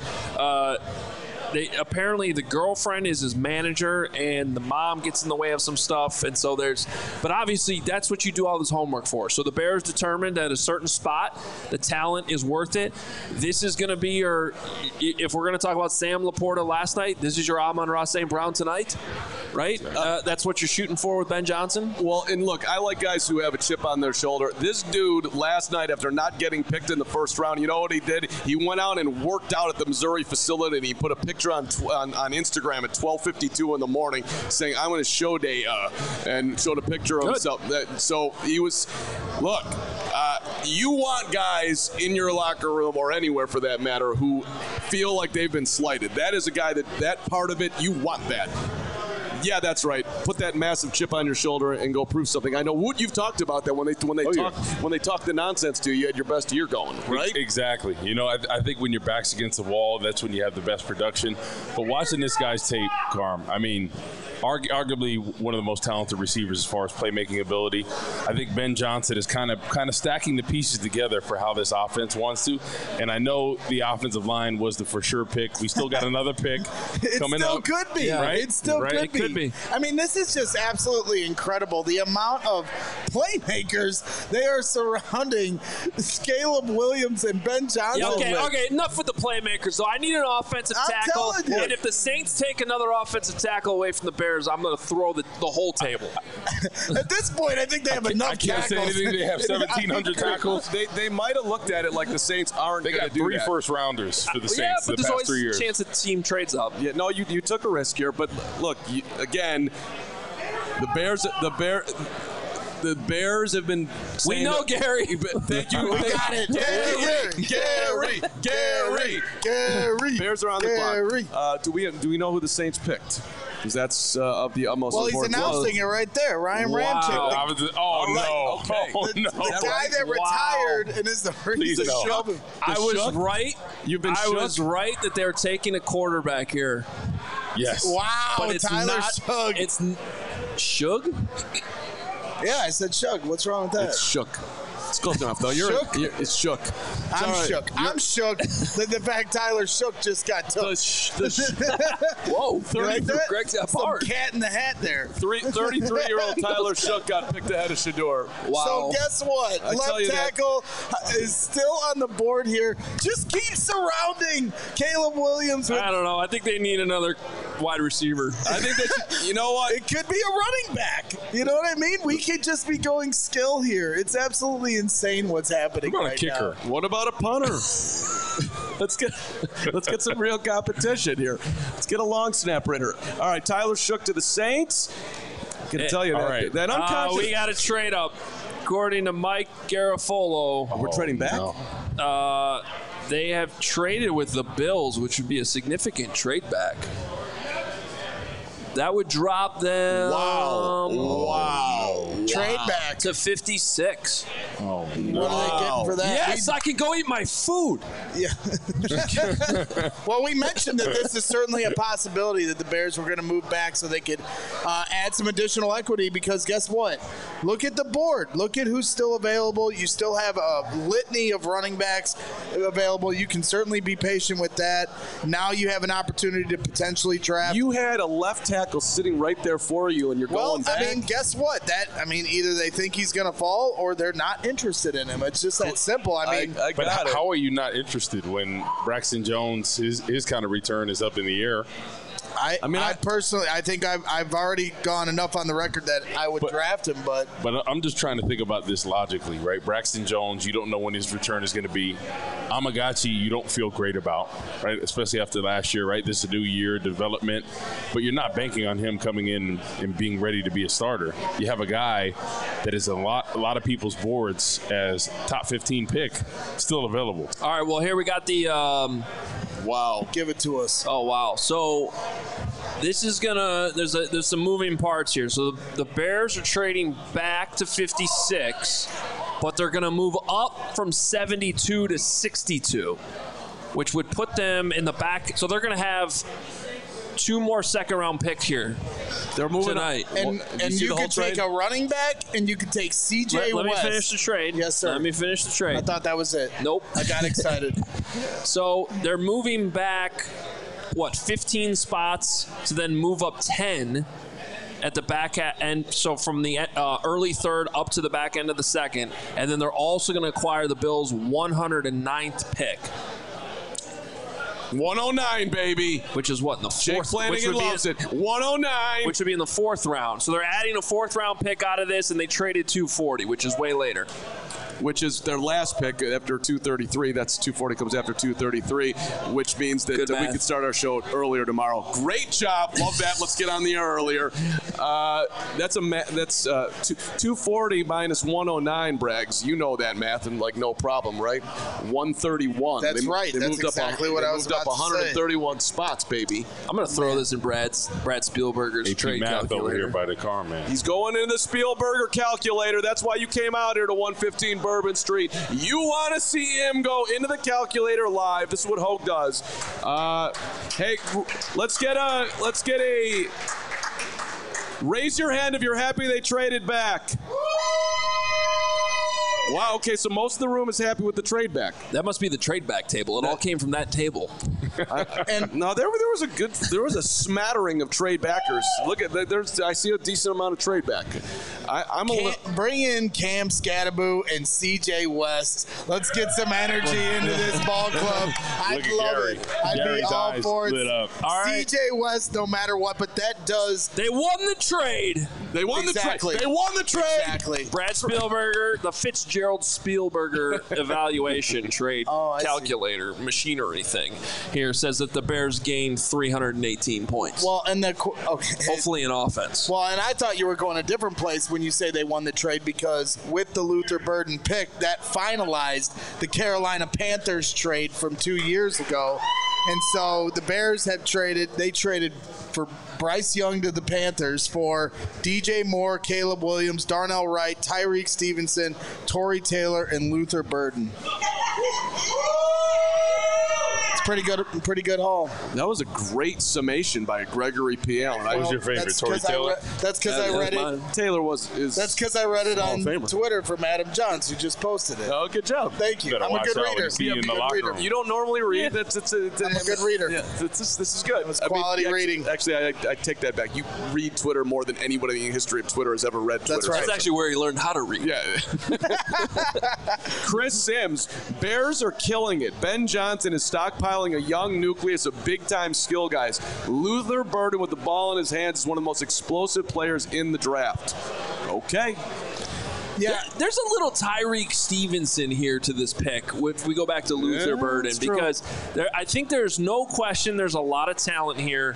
Apparently the girlfriend is his manager and the mom gets in the way of some stuff, and so but obviously that's what you do all this homework for. So the Bears determined at a certain spot the talent is worth it. This is going to be if we're going to talk about Sam Laporta last night, this is your Amon-Ra St. Brown tonight, right? That's what you're shooting for with Ben Johnson? Well, and look, I like guys who have a chip on their shoulder. This dude last night, after not getting picked in the first round, you know what he did? He went out and worked out at the Missouri facility, and he put a picture on Instagram at 12:52 in the morning saying, I'm going to show day, and showed a picture of himself. So he was, look, you want guys in your locker room or anywhere for that matter who feel like they've been slighted. That is a guy that part of it, you want that. Yeah, that's right. Put that massive chip on your shoulder and go prove something. I know, Woot, you've talked about that when they talk the nonsense to you, you had your best year going, right? Exactly. I think when your back's against the wall, that's when you have the best production. But watching this guy's tape, Carm, I mean, arguably one of the most talented receivers as far as playmaking ability. I think Ben Johnson is kind of stacking the pieces together for how this offense wants to. And I know the offensive line was the for sure pick. We still got another pick coming up. It still could be. Yeah, right? It still could be. I mean, this is just absolutely incredible. The amount of playmakers they are surrounding Caleb Williams and Ben Johnson. Yeah, okay, enough with the playmakers, though. I need an offensive tackle. And if the Saints take another offensive tackle away from the Bears, I'm going to throw the whole table. At this point, I think they have enough tackles. I can't say anything. They have 1,700 tackles. They might have looked at it like the Saints aren't going to do that. They got 3 first-rounders for the Saints the past 3 years. There's always a chance that the team trades up. Yeah, no, you took a risk here, but look, again, the Bears have been saying we know Gary. Thank you. We got it. Gary. Bears are on the clock. Do we know who the Saints picked? Because that's of the utmost importance. Well, he's announcing it right there. Ryan Ramczyk. The guy that retired and is the reason. I was right. I was right that they're taking a quarterback here. Yes. Wow. But it's Tyler not, Shug. It's Shug? Yeah, I said Shug. What's wrong with that? It's Shook. It's close enough, though. It's Shook. I'm shook. I'm shook that the fact Tyler Shook just got took. Whoa, 30 Greg got some hard. cat in the hat there. 33-year-old Tyler Shook got picked ahead of Shedeur. Wow. So guess what? Left tackle is still on the board here. Just keep surrounding Caleb Williams. I don't know. I think they need another wide receiver. I think that you know what? It could be a running back. You know what I mean? We could just be going skill here. It's absolutely insane what's happening What about right a kicker? now. What about a punter? Let's get some real competition here. Let's get a long snapper in her. All right, Tyler Shook to the Saints. I can tell you all that. right. That unconscious. We got to trade up. According to Mike Garafolo, We're trading back. No. they have traded with the Bills, which would be a significant trade back. That would drop them. Wow. Trade back. To 56. Oh, What are they getting for that? Yes, I can go eat my food. Yeah. Well, we mentioned that this is certainly a possibility that the Bears were going to move back so they could add some additional equity because guess what? Look at the board. Look at who's still available. You still have a litany of running backs available. You can certainly be patient with that. Now you have an opportunity to potentially draft. You had a left tackle sitting right there for you, and you're going back. I mean, guess what? Either they think he's going to fall or they're not interested in him. It's just that simple. I mean, But how are you not interested when Braxton Jones, his kind of return is up in the air? I personally, I think I've already gone enough on the record that I would draft him, but I'm just trying to think about this logically, right? Braxton Jones, you don't know when his return is going to be. Amagachi, you don't feel great about, right? Especially after last year, right? This is a new year, development, but you're not banking on him coming in and being ready to be a starter. You have a guy that is a lot of people's boards as top 15 pick, still available. All right, well, here we got the wow, give it to us. Oh, wow. So this is there's some moving parts here. So the Bears are trading back to 56, but they're going to move up from 72 to 62, which would put them in the back. So they're going to have 2 more second-round picks here. They're moving tonight. And you could take a running back, and you could take C.J. Let me West. finish the trade. Yes, sir. Let me finish the trade. I thought that was it. Nope. I got excited. So they're moving back, 15 spots to then move up 10 at the back end. So from the early third up to the back end of the second. And then they're also going to acquire the Bills' 109th pick. 109, baby. Which is what, in the Jake fourth? Flanagan loves it. 109. Which would be in the 4th round. So they're adding a 4th round pick out of this, and they traded 240, which is way later. Which is their last pick after 233. That's 240 comes after 233, which means that we could start our show earlier tomorrow. Great job. Love that. Let's get on the air earlier. That's 240 minus 109, Braggs. You know that math, and no problem, right? 131. That's right. That's exactly what I was about to say. Moved up 131 spots, baby. I'm going to throw this in Brad Spielberger's trade math calculator. over here by the car, man. He's going in the Spielberger calculator. That's why you came out here to 115 Bourbon Street. You want to see him go into the calculator live. This is what Hogue does. Hey, let's get a raise your hand if you're happy they traded back. Wow, okay, so most of the room is happy with the trade back. That must be the trade back table. It all came from that table. And no, there was a smattering of trade backers. Look at I see a decent amount of trade back. Bring in Cam Scatterbo and C.J. West. Let's get some energy into this ball club. I'd love it. I'd be all for it. All right. C.J. West, no matter what, but that does. They won the trade. They won the trade. They won the trade. Exactly. Brad Spielberger, the Fitzgerald Spielberger evaluation trade calculator machinery thing here says that the Bears gained 318 points. Well, and hopefully in offense. Well, and I thought you were going a different place when you say they won the trade because with the Luther Burden pick, that finalized the Carolina Panthers trade from 2 years ago. And so the Bears have traded for Bryce Young to the Panthers for DJ Moore, Caleb Williams, Darnell Wright, Tyreek Stevenson, Torrey Taylor, and Luther Burden. Pretty good haul. That was a great summation by Gregory P. Allen. What was your favorite, Torrey Taylor? That's because I read it. Taylor That's because I read it on Twitter from Adam Johns, who just posted it. Oh, good job. Thank you. I'm a good reader. You don't normally read. I'm a good reader. Yeah, this is good. It's quality reading. Actually, I take that back. You read Twitter more than anybody in the history of Twitter has ever read Twitter. That's right. That's actually where he learned how to read. Yeah. Chris Sims, Bears are killing it. Ben Johnson is stockpiling profiling a young nucleus of big-time skill guys. Luther Burden with the ball in his hands is one of the most explosive players in the draft. Okay. Yeah, there's a little Tyreek Stevenson here to this pick if we go back to Luther Burden, because I think there's no question there's a lot of talent here.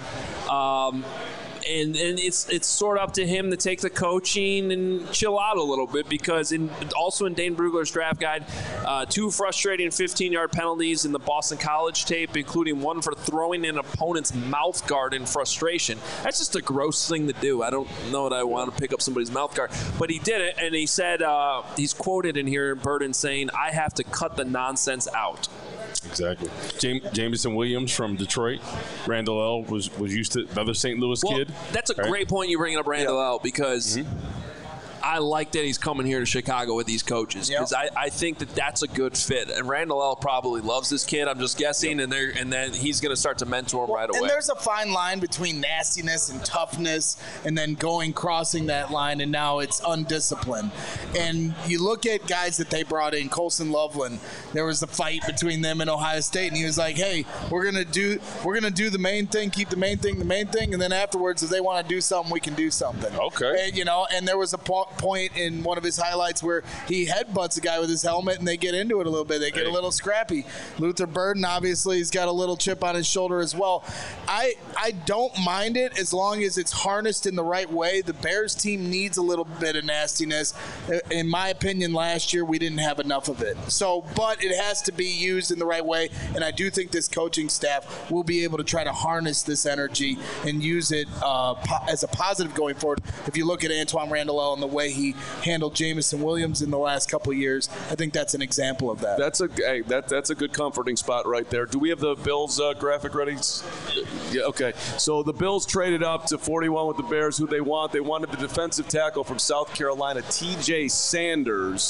And it's sort of up to him to take the coaching and chill out a little bit, because also in Dane Brugler's draft guide, 2 frustrating 15-yard penalties in the Boston College tape, including one for throwing an opponent's mouth guard in frustration. That's just a gross thing to do. I don't know that I want to pick up somebody's mouth guard, but he did it, and he said, he's quoted in here, Burden saying, "I have to cut the nonsense out." Exactly. Jameson Williams from Detroit. Randall L. was used to another St. Louis kid. That's a great point you bringing up Randall L. because I like that he's coming here to Chicago with these coaches, because I think that's a good fit. And Randall L. probably loves this kid. I'm just guessing, and then he's going to start to mentor him right away. And there's a fine line between nastiness and toughness, and then crossing that line, and now it's undisciplined. And you look at guys that they brought in, Colson Loveland. There was a fight between them and Ohio State, and he was like, "Hey, we're gonna do the main thing, keep the main thing, and then afterwards, if they want to do something, we can do something." Okay. And, and there was a point in one of his highlights where he headbutts a guy with his helmet, and they get into it a little bit. They get a little scrappy. Luther Burden, obviously, he's got a little chip on his shoulder as well. I don't mind it as long as it's harnessed in the right way. The Bears team needs a little bit of nastiness. In my opinion, last year we didn't have enough of it. But it has to be used in the right way, and I do think this coaching staff will be able to try to harness this energy and use it as a positive going forward. If you look at Antoine Randall L. and the way he handled Jameson Williams in the last couple of years, I think that's an example of that. That's a good comforting spot right there. Do we have the Bills graphic ready? Yeah, okay. So the Bills traded up to 41 with the Bears. Who they want? They wanted the defensive tackle from South Carolina, T.J. Sanders.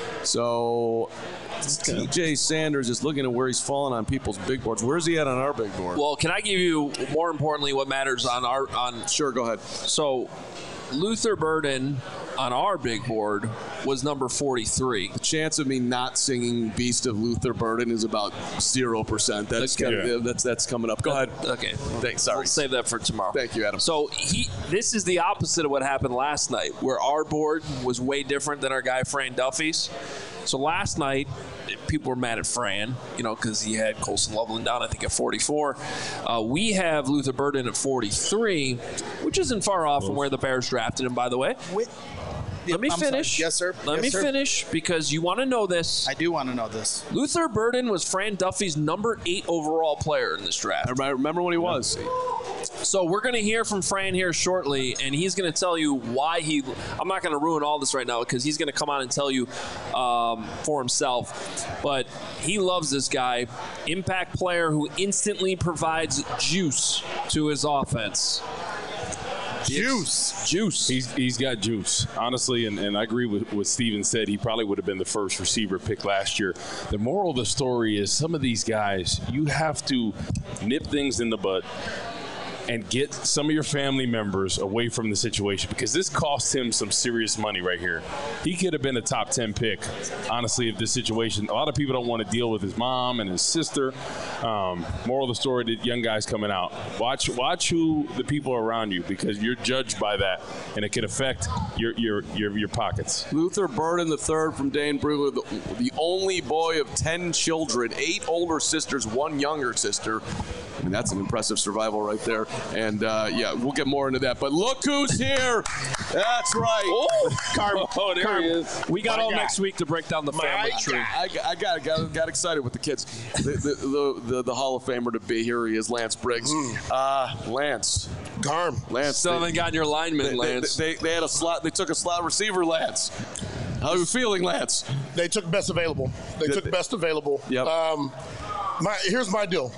So T.J. Sanders is looking at where he's fallen on people's big boards. Where's he at on our big board? Well, can I give you, more importantly, what matters on Sure, go ahead. So Luther Burden on our big board was number 43. The chance of me not singing Beast of Luther Burden is about 0%. That's coming up. Go ahead. Okay. Thanks. Sorry. We'll save that for tomorrow. Thank you, Adam. So this is the opposite of what happened last night, where our board was way different than our guy Fran Duffy's. So last night, people were mad at Fran, because he had Colson Loveland down, I think, at 44. We have Luther Burden at 43, which isn't far off from where the Bears drafted him, by the way. Let me finish. Yes, sir. Let me finish, because you want to know this. I do want to know this. Luther Burden was Fran Duffy's number 8 overall player in this draft. I remember when he was. So we're going to hear from Fran here shortly, and he's going to tell you why I'm not going to ruin all this right now, because he's going to come on and tell you for himself. But he loves this guy. Impact player who instantly provides juice to his offense. Juice. He's got juice, honestly, and I agree with what Steven said. He probably would have been the first receiver pick last year. The moral of the story is some of these guys, you have to nip things in the bud and get some of your family members away from the situation, because this cost him some serious money right here. He could have been a top 10 pick, honestly, if this situation. A lot of people don't want to deal with his mom and his sister. Moral of the story, the young guys coming out. Watch who the people are around you, because you're judged by that, and it can affect your pockets. Luther Burden III from Dane Brugler, the only boy of 10 children, 8 older sisters, 1 younger sister. I mean, that's an impressive survival right there. And, we'll get more into that. But look who's here. That's right. There he is. We got all next week to break down the family tree. I got excited with the kids. The Hall of Famer to be here. He is Lance Briggs. Lance. Lance. Still haven't gotten your lineman, Lance. They had a slot. They took a slot receiver, Lance. How are you feeling, Lance? They took best available. Yep. Here's my deal.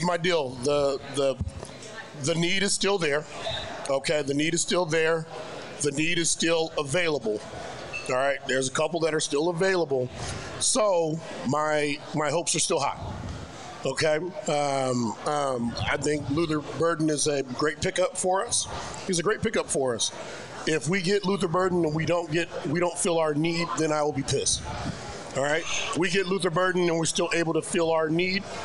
The need is still there. Okay, the need is still there. The need is still available. All right, there's a couple that are still available. So my hopes are still high. Okay, I think Luther Burden is a great pickup for us. He's a great pickup for us. If we get Luther Burden and we don't fill our need, then I will be pissed. All right, we get Luther Burden and we're still able to fill our need,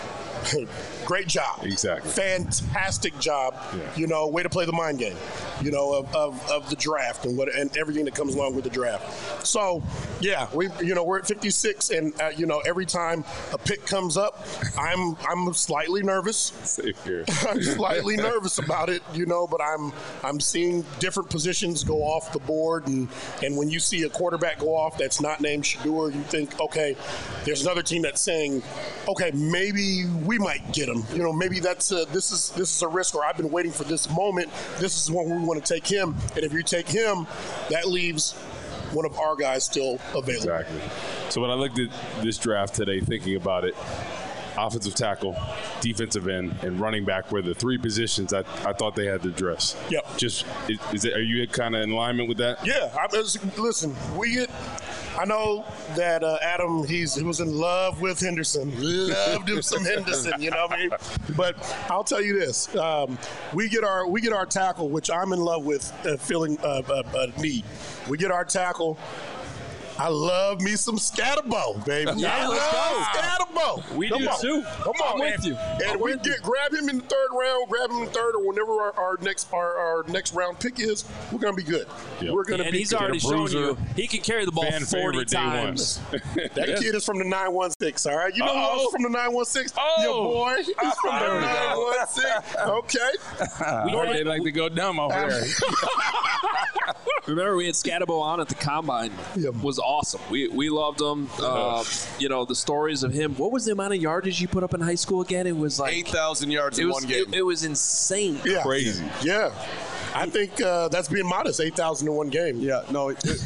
great job. Exactly. Fantastic job. Yeah. Way to play the mind game, of the draft and everything that comes along with the draft. So, yeah, we're at 56, and every time a pick comes up, I'm slightly nervous. Same here. I'm slightly nervous about it, but I'm seeing different positions go off the board, and when you see a quarterback go off that's not named Shedeur, you think, okay, there's another team that's saying, okay, maybe we might get him. Maybe this is a risk, or I've been waiting for this moment. This is when we want to take him, and if you take him, that leaves one of our guys still available. Exactly. So when I looked at this draft today, thinking about it, offensive tackle, defensive end, and running back were the three positions I thought they had to address. Yep. Are you kind of in alignment with that? Yeah. Listen, I know that Adam, he was in love with Henderson. Loved him some Henderson, you know what I mean? But I'll tell you this. We get our tackle, which I'm in love with, feeling a need. We get our tackle. I love me some Scatterbo, baby. Yeah, I love Scatterbo. We do too. Come on, I'm with you. And we grab him in the third round, or whenever our next round pick is, we're gonna be good. Yep. We're gonna and be he's good. already shown you he can carry the ball 40 times. That kid is from the 916. All right, you know who else is from the 916? Your boy. He's from the 916. Okay. We heard they like to go dumb over there. Remember, we had Scatterbo on at the Combine. Was awesome. We loved him. The stories of him. What was the amount of yardage you put up in high school again? It was like 8,000 yards in one game. It was insane. Yeah. Crazy. Yeah. I think that's being modest, 8,000 in one game. Yeah, no. It's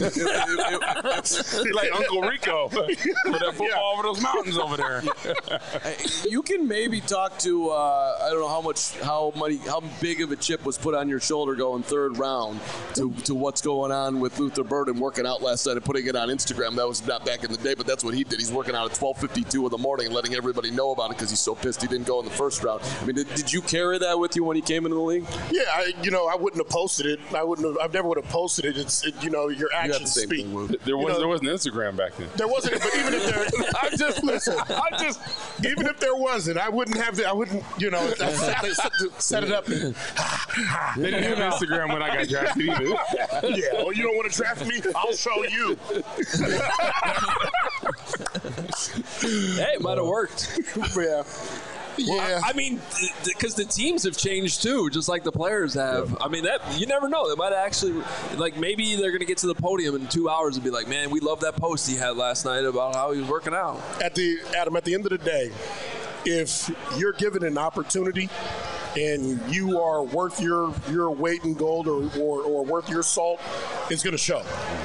like Uncle Rico with that football over those mountains over there. You can maybe talk to, I don't know how big of a chip was put on your shoulder going third round to what's going on with Luther Burden working out last night and putting it on Instagram. That was not back in the day, but that's what he did. He's working out at 12:52 in the morning and letting everybody know about it because he's so pissed he didn't go in the first round. I mean, did you carry that with you when he came into the league? Yeah, I wouldn't have posted it. I never would have posted it. It's your actions speak. There wasn't Instagram back then. There wasn't, but even if there, even if there wasn't, I wouldn't have I wouldn't, set it up. They didn't have Instagram when I got drafted either. Yeah. Well, you don't want to draft me? I'll show you. Hey, it might have worked. Yeah. Well, I mean, because the teams have changed too, just like the players have. I mean, that you never know. They might actually, maybe they're going to get to the podium in 2 hours and be like, man, we love that post he had last night about how he was working out. At the end of the day, if you're given an opportunity and you are worth your weight in gold or worth your salt, it's going to show.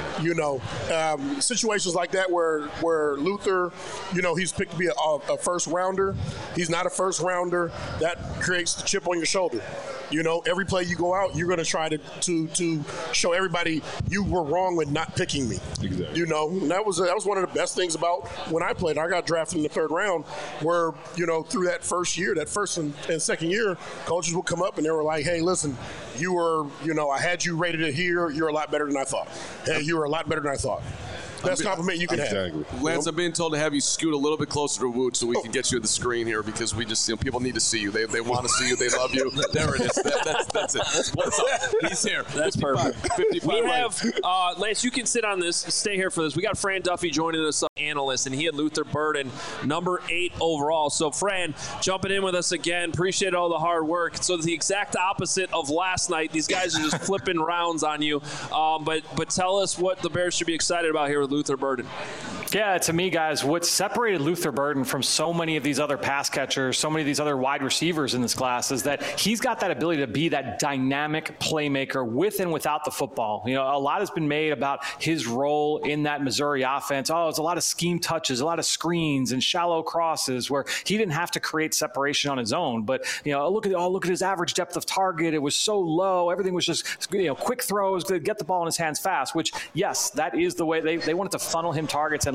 Situations like that where Luther, he's picked to be a first rounder. He's not a first rounder. That creates the chip on your shoulder. Every play you go out, you're going to try to show everybody you were wrong with not picking me. Exactly. And that was one of the best things about when I played. I got drafted in the third round where, through that first year, that first and second year, coaches would come up and they were like, hey, listen, you were, I had you rated it here. You're a lot better than I thought. Hey, you were a lot better than I thought. Best compliment you can have. Lance, I'm being told to have you scoot a little bit closer to Woot so we can get you at the screen here because we just, people need to see you. They want to see you. They love you. There it is. That's it. What's up? He's here. That's 55, perfect. 55 we right. have, Lance, you can sit on this. Stay here for this. We got Fran Duffy joining us, analyst, and he had Luther Burden, number 8 overall. So, Fran, jumping in with us again. Appreciate all the hard work. So, the exact opposite of last night. These guys are just flipping rounds on you. But tell us what the Bears should be excited about here with Luther Burden. Yeah, to me, guys, what separated Luther Burden from so many of these other pass catchers, so many of these other wide receivers in this class is that he's got that ability to be that dynamic playmaker with and without the football. A lot has been made about his role in that Missouri offense. Oh, it's a lot of scheme touches, a lot of screens and shallow crosses where he didn't have to create separation on his own. But, look at his average depth of target. It was so low. Everything was just, quick throws to get the ball in his hands fast, which, yes, that is the way they wanted to funnel him targets and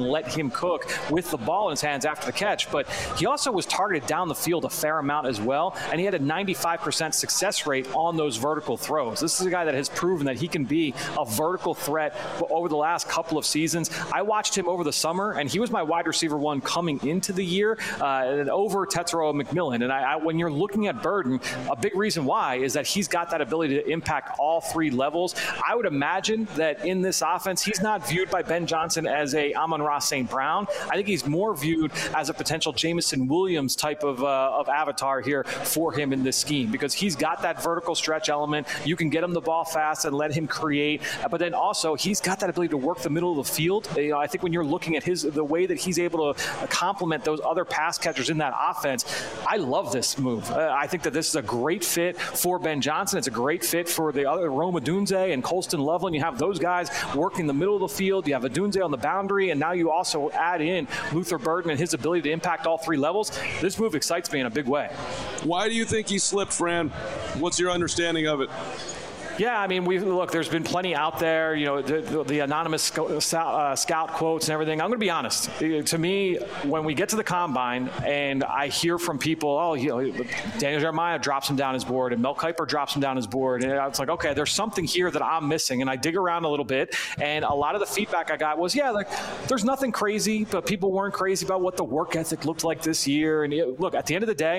let him cook with the ball in his hands after the catch. But he also was targeted down the field a fair amount as well, and he had a 95% success rate on those vertical throws. This is a guy that has proven that he can be a vertical threat over the last couple of seasons. I watched him over the summer, and he was my wide receiver one coming into the year over Tetairoa McMillan. And when you're looking at Burden, a big reason why is that he's got that ability to impact all three levels. I would imagine that in this offense, he's not viewed by Ben Johnson as a Amon-Ra St. Brown. I think he's more viewed as a potential Jameson Williams type of avatar here for him in this scheme, because he's got that vertical stretch element. You can get him the ball fast and let him create, but then also he's got that ability to work the middle of the field. I think when you're looking at the way that he's able to complement those other pass catchers in that offense, I love this move. I think that this is a great fit for Ben Johnson. It's a great fit for the other Rome Odunze and Colston Loveland. You have those guys working the middle of the field. You have Odunze on the boundary, and now you also add in Luther Burden and his ability to impact all three levels. This move excites me in a big way. Why do you think he slipped, Fran? What's your understanding of it? Yeah, I mean, look, there's been plenty out there, the anonymous scout quotes and everything. I'm going to be honest. To me, when we get to the combine and I hear from people, Daniel Jeremiah drops him down his board and Mel Kiper drops him down his board. And it's like, okay, there's something here that I'm missing. And I dig around a little bit. And a lot of the feedback I got was, there's nothing crazy, but people weren't crazy about what the work ethic looked like this year. And look, at the end of the day,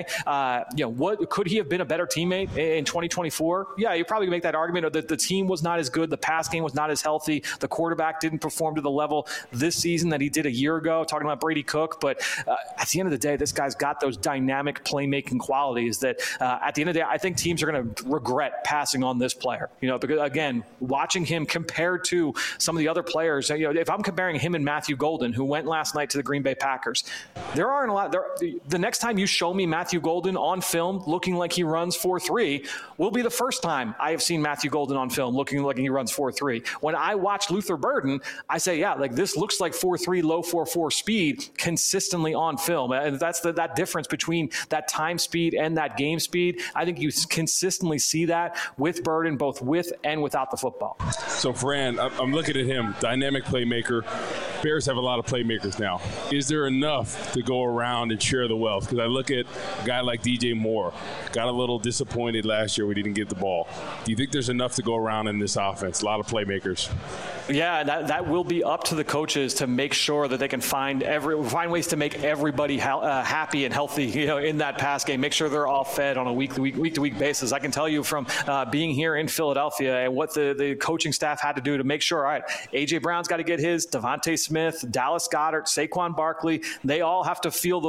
what could he have been a better teammate in 2024? Yeah, you probably make that argument. The team was not as good. The pass game was not as healthy. The quarterback didn't perform to the level this season that he did a year ago, talking about Brady Cook. But at the end of the day, this guy's got those dynamic playmaking qualities that at the end of the day, I think teams are going to regret passing on this player. Because, again, watching him compared to some of the other players, if I'm comparing him and Matthew Golden, who went last night to the Green Bay Packers, there aren't a lot. The next time you show me Matthew Golden on film looking like he runs 4.3 will be the first time I have seen Matthew Golden on film looking like he runs 4.3. When I watch Luther Burden, I say, this looks like 4.3, low 4.4 speed consistently on film. And that's that difference between that time speed and that game speed. I think you consistently see that with Burden, both with and without the football. So, Fran, I'm looking at him, dynamic playmaker. Bears have a lot of playmakers now. Is there enough to go around and share the wealth? Because I look at a guy like DJ Moore, got a little disappointed last year when he didn't get the ball. Do you think there's enough to go around in this offense? A lot of playmakers. Yeah, that will be up to the coaches to make sure that they can find ways to make everybody happy and healthy, in that pass game. Make sure they're all fed on a week to week basis. I can tell you from being here in Philadelphia and what the coaching staff had to do to make sure, all right, AJ Brown's got to get his, Devontae Smith, Dallas Goedert, Saquon Barkley. They all have to feel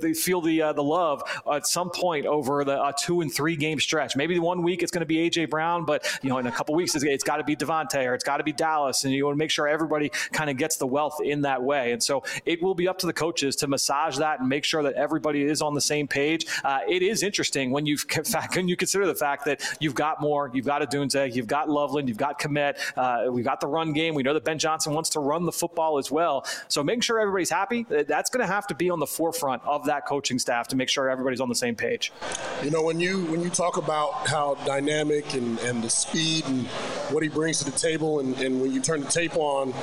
the love at some point over a 2 and 3 game stretch. Maybe 1 week it's going to be AJ Brown, but in a couple weeks it's got to be Devontae or it's got to be Dallas, and you want to make sure everybody kind of gets the wealth in that way. And so it will be up to the coaches to massage that and make sure that everybody is on the same page. It is interesting when you consider the fact that you've got Moore, you've got Odunze, you've got Loveland, you've got Kmet, we've got the run game. We know that Ben Johnson wants to run the football as well. So making sure everybody's happy, that's going to have to be on the forefront of that coaching staff to make sure everybody's on the same page. When you talk about how dynamic and the speed and what he brings to the table, and when you turn the tape on,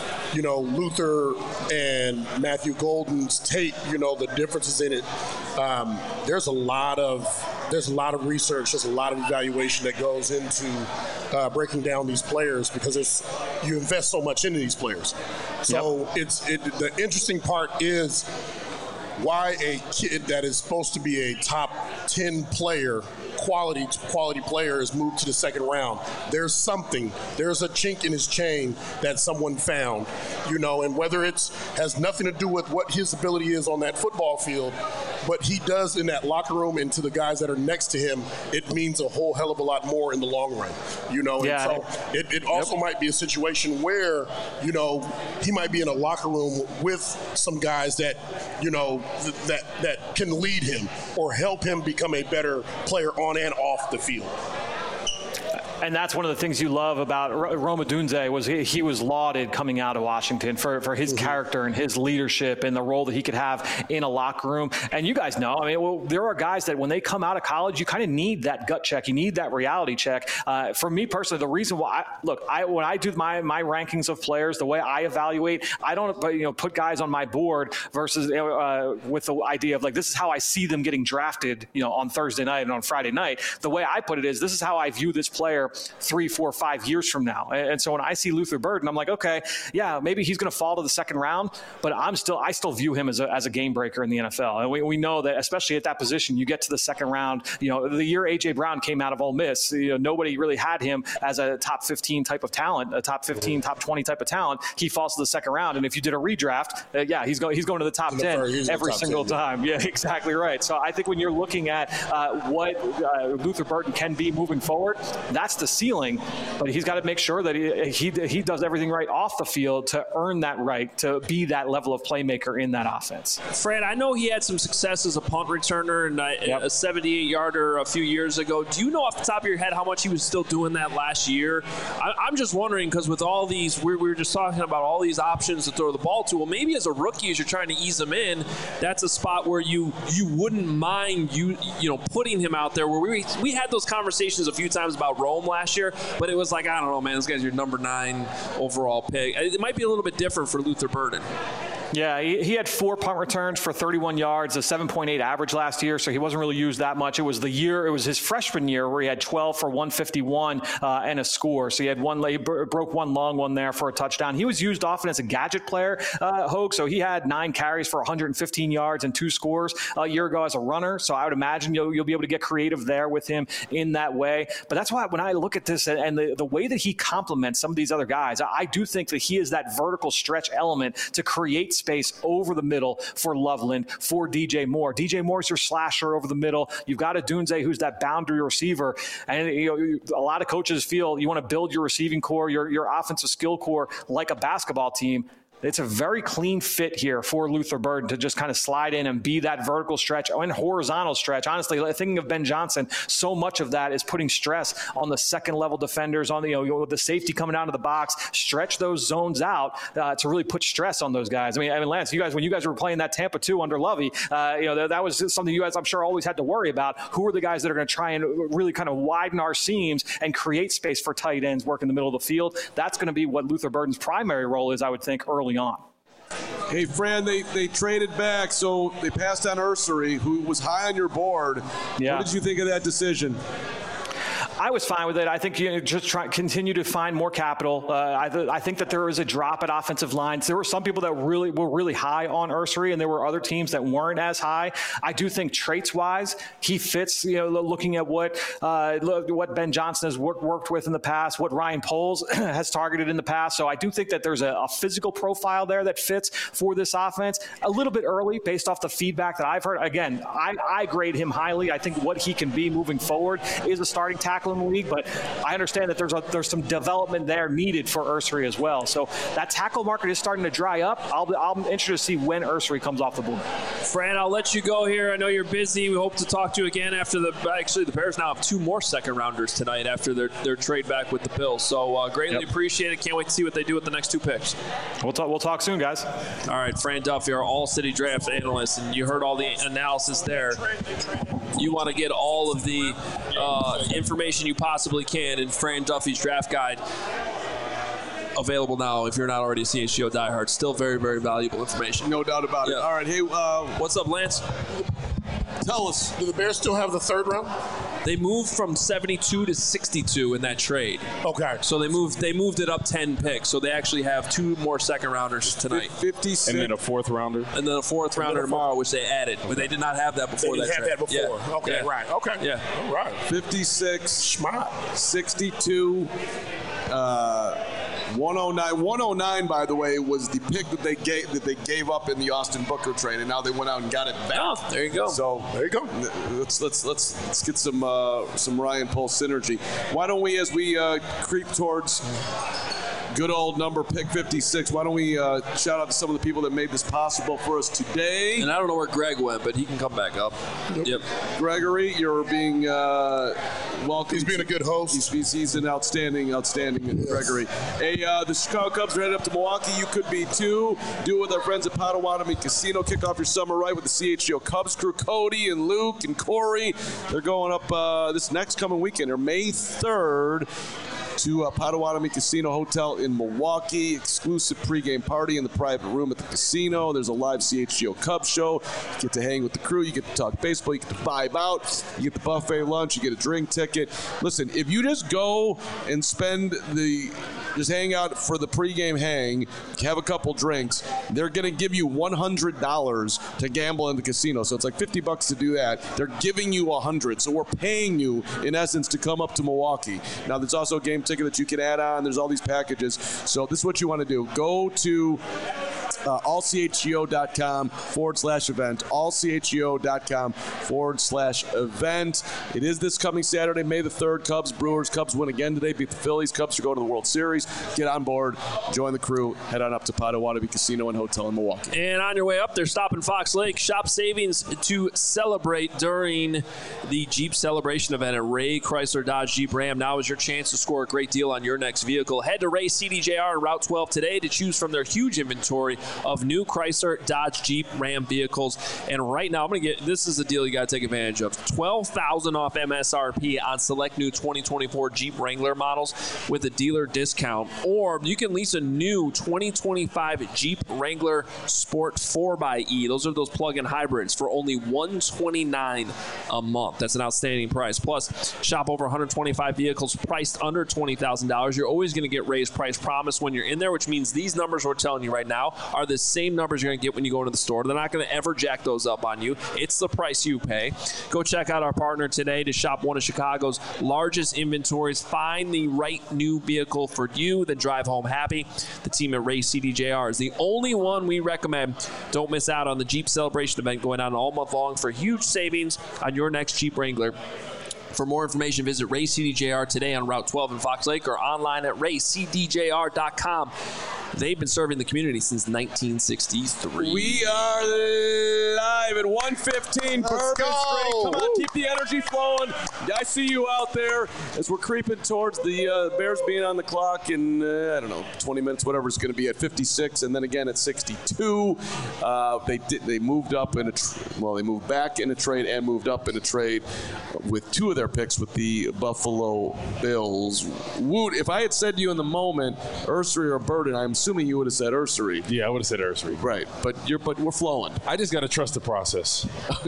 Luther and Matthew Golden's tape, the differences in it. There's a lot of research, there's a lot of evaluation that goes into breaking down these players, because you invest so much into these players. So the interesting part is why a kid that is supposed to be a top 10 player, quality player, is moved to the second round. There's a chink in his chain that someone found, and whether has nothing to do with what his ability is on that football field, what he does in that locker room and to the guys that are next to him, it means a whole hell of a lot more in the long run, Yeah. And so it also might be a situation where, he might be in a locker room with some guys that, that can lead him or help him become a better player on and off the field. And that's one of the things you love about Rome Odunze was he was lauded coming out of Washington for his character and his leadership and the role that he could have in a locker room. And you guys know, there are guys that when they come out of college, you kind of need that gut check. You need that reality check. For me personally, the reason why, when I do my rankings of players, the way I evaluate, I don't put guys on my board versus with the idea of this is how I see them getting drafted, on Thursday night and on Friday night. The way I put it is this is how I view this player 3, 4, 5 years from now. And so when I see Luther Burden, I'm like, okay, yeah, maybe he's going to fall to the second round, but I still view him as a game breaker in the NFL. And we know that, especially at that position, you get to the second round. The year A.J. Brown came out of Ole Miss, nobody really had him as a top 15 type of talent, a top 15, top 20 type of talent. He falls to the second round. And if you did a redraft, he's going to the top 10 every single time. Yeah, exactly right. So I think when you're looking at what Luther Burden can be moving forward, that's the ceiling. But he's got to make sure that he does everything right off the field to earn that right to be that level of playmaker in that offense. Fran, I know he had some success as a punt returner and a 78-yarder a few years ago. Do you know off the top of your head how much he was still doing that last year? I'm just wondering, because with all these, we were just talking about all these options to throw the ball to. Well, maybe as a rookie, as you're trying to ease him in, that's a spot where you wouldn't mind putting him out there. Where we had those conversations a few times about Rome last year, but it was like, I don't know, man, this guy's your number 9 overall pick. It might be a little bit different for Luther Burden. Yeah, he had 4 punt returns for 31 yards, a 7.8 average last year, so he wasn't really used that much. It was his freshman year where he had 12 for 151 and a score. So he had he broke one long one there for a touchdown. He was used often as a gadget player, Hogue, so he had 9 carries for 115 yards and 2 scores a year ago as a runner. So I would imagine you'll be able to get creative there with him in that way. But that's why when I look at this and the way that he complements some of these other guys, I do think that he is that vertical stretch element to create space over the middle for Loveland, for DJ Moore. DJ Moore's your slasher over the middle. You've got Odunze, who's that boundary receiver. And a lot of coaches feel you want to build your receiving core, your offensive skill core like a basketball team. It's a very clean fit here for Luther Burden to just kind of slide in and be that vertical stretch and horizontal stretch. Honestly, thinking of Ben Johnson, so much of that is putting stress on the second level defenders, on with the safety coming out of the box, stretch those zones out to really put stress on those guys. I mean, Lance, when you guys were playing that Tampa 2 under Lovey, that was something you guys, I'm sure, always had to worry about. Who are the guys that are going to try and really kind of widen our seams and create space for tight ends work in the middle of the field? That's going to be what Luther Burden's primary role is, I would think, early on. Hey, Fran, they traded back, so they passed on Ursery, who was high on your board. Yeah. What did you think of that decision? I was fine with it. I think you just continue to find more capital. I think that there is a drop at offensive lines. There were some people that were really high on Ursery, and there were other teams that weren't as high. I do think traits-wise, he fits. Looking at what Ben Johnson has worked with in the past, what Ryan Poles has targeted in the past. So I do think that there's a physical profile there that fits for this offense. A little bit early, based off the feedback that I've heard. Again, I grade him highly. I think what he can be moving forward is a starting tackle in the league, but I understand that there's some development there needed for Ursery as well. So that tackle market is starting to dry up. I'm interested to see when Ursery comes off the board. Fran, I'll let you go here. I know you're busy. We hope to talk to you again after the Bears now have 2 more second rounders tonight after their trade back with the Bills. So greatly appreciate it. Can't wait to see what they do with the next 2 picks. We'll talk soon, guys. All right, Fran Duffy, our all-city draft analyst, and you heard all the analysis there. You want to get all of the information you possibly can in Fran Duffy's draft guide. Available now if you're not already a CHGO diehard. Still very, very valuable information. No doubt about it. All right, hey. What's up, Lance? Tell us. Do the Bears still have the 3rd round? They moved from 72 to 62 in that trade. Okay. So they moved it up 10 picks. So they actually have 2 more second rounders tonight. 56. And then a 4th rounder. And then a 4th rounder tomorrow, which they added. But they did not have that before that trade. They didn't have that before. Yeah. Okay, yeah. Right. Okay. Yeah. All right. 56. Smart. 62. 109. 109, by the way, was the pick that they gave up in the Austin Booker trade, and now they went out and got it back. Oh, there you go. So there you go. Let's get some Ryan Poles synergy. Why don't we, as we creep towards good old number, pick 56. Why don't we shout out to some of the people that made this possible for us today. And I don't know where Greg went, but he can come back up. Yep. Gregory, you're being welcome. He's being a good host. He's an outstanding Gregory. Hey, the Chicago Cubs are headed up to Milwaukee. You could be too. Do it with our friends at Potawatomi Casino. Kick off your summer right with the CHGO Cubs crew, Cody and Luke and Corey. They're going up this next coming weekend, or May 3rd, to Potawatomi Casino Hotel in Milwaukee. Exclusive pregame party in the private room at the casino. There's a live CHGO Cubs show. You get to hang with the crew. You get to talk baseball. You get to vibe out. You get the buffet lunch. You get a drink ticket. Listen, if you just go and just hang out for the pregame hang, have a couple drinks, they're going to give you $100 to gamble in the casino. So it's like $50 to do that. They're giving you $100. So we're paying you, in essence, to come up to Milwaukee. Now, there's also a game ticket that you can add on. There's all these packages. So this is what you want to do. Go to allchgo.com/event, allchgo.com/event. It is this coming Saturday, May the 3rd. Cubs, Brewers. Cubs win again today, beat the Phillies. Cubs are going to the World Series. Get on board, join the crew, head on up to Potawatomi Casino and Hotel in Milwaukee. And on your way up there, stop in Fox Lake. Shop savings to celebrate during the Jeep Celebration event at Ray Chrysler Dodge Jeep Ram. Now is your chance to score a great deal on your next vehicle. Head to Ray CDJR on Route 12 today to choose from their huge inventory of new Chrysler, Dodge, Jeep, Ram vehicles. And right now, this is a deal you got to take advantage of. $12,000 off MSRP on select new 2024 Jeep Wrangler models with a dealer discount. Or you can lease a new 2025 Jeep Wrangler Sport 4xe. Those are those plug-in hybrids for only $129 a month. That's an outstanding price. Plus, shop over 125 vehicles priced under $20,000. You're always going to get raised price promise when you're in there, which means these numbers we're telling you right now are the same numbers you're going to get when you go into the store. They're not going to ever jack those up on you. It's the price you pay. Go check out our partner today to shop one of Chicago's largest inventories. Find the right new vehicle for you, then drive home happy. The team at Ray CDJR is the only one we recommend. Don't miss out on the Jeep Celebration event going on all month long for huge savings on your next Jeep Wrangler. For more information, visit Ray CDJR today on Route 12 in Fox Lake or online at raycdjr.com. They've been serving the community since 1963. We are live at 1:15. Let's go. Come on, keep the energy flowing. I see you out there as we're creeping towards the Bears being on the clock in, 20 minutes, whatever it's going to be, at 56, and then again at 62. They moved up in they moved back in a trade and moved up in a trade with two of their picks with the Buffalo Bills. Woot, if I had said to you in the moment, Ursery or Burden, I'm assuming you would have said Ursery. Yeah, I would have said Ursery. Right, but we're flowing. I just got to trust the process.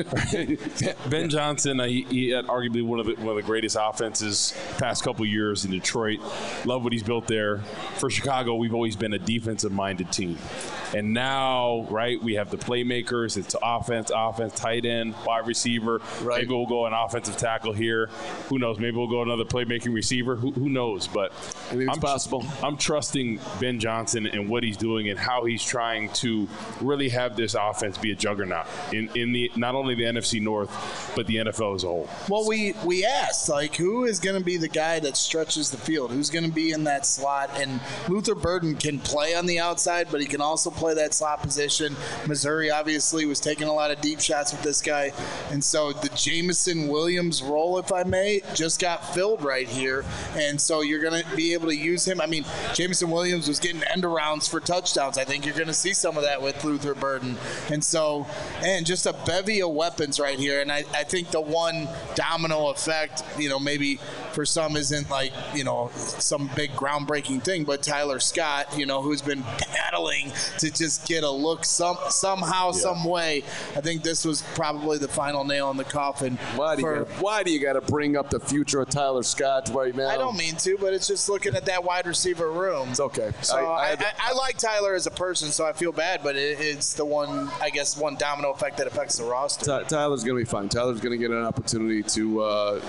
Ben Johnson, he had arguably one of the greatest offenses past couple years in Detroit. Love what he's built there. For Chicago, we've always been a defensive-minded team. And now, right, we have the playmakers. It's offense, tight end, wide receiver. Right. Maybe we'll go an offensive tackle here. Who knows? Maybe we'll go another playmaking receiver. Who knows? But I think it's possible. I'm trusting Ben Johnson and what he's doing and how he's trying to really have this offense be a juggernaut in the not only the NFC North, but the NFL as a whole. Well, we asked, who is going to be the guy that stretches the field? Who's going to be in that slot? And Luther Burden can play on the outside, but he can also play that slot position. Missouri obviously was taking a lot of deep shots with this guy. And so the Jameson Williams role, if I may, just got filled right here. And so you're going to be able to use him. I mean, Jameson Williams was getting end arounds for touchdowns. I think you're going to see some of that with Luther Burden. And so, and just a bevy of weapons right here. And I think the one domino effect, maybe for some isn't some big groundbreaking thing, but Tyler Scott, who's been battling to just get a look somehow, some way. I think this was probably the final nail in the coffin. Why do you got to bring up the future of Tyler Scott right now? I don't mean to, but it's just looking at that wide receiver room. It's okay. So I like Tyler as a person, so I feel bad, but it's the one domino effect that affects the roster. Tyler's going to be fine. Tyler's going to get an opportunity to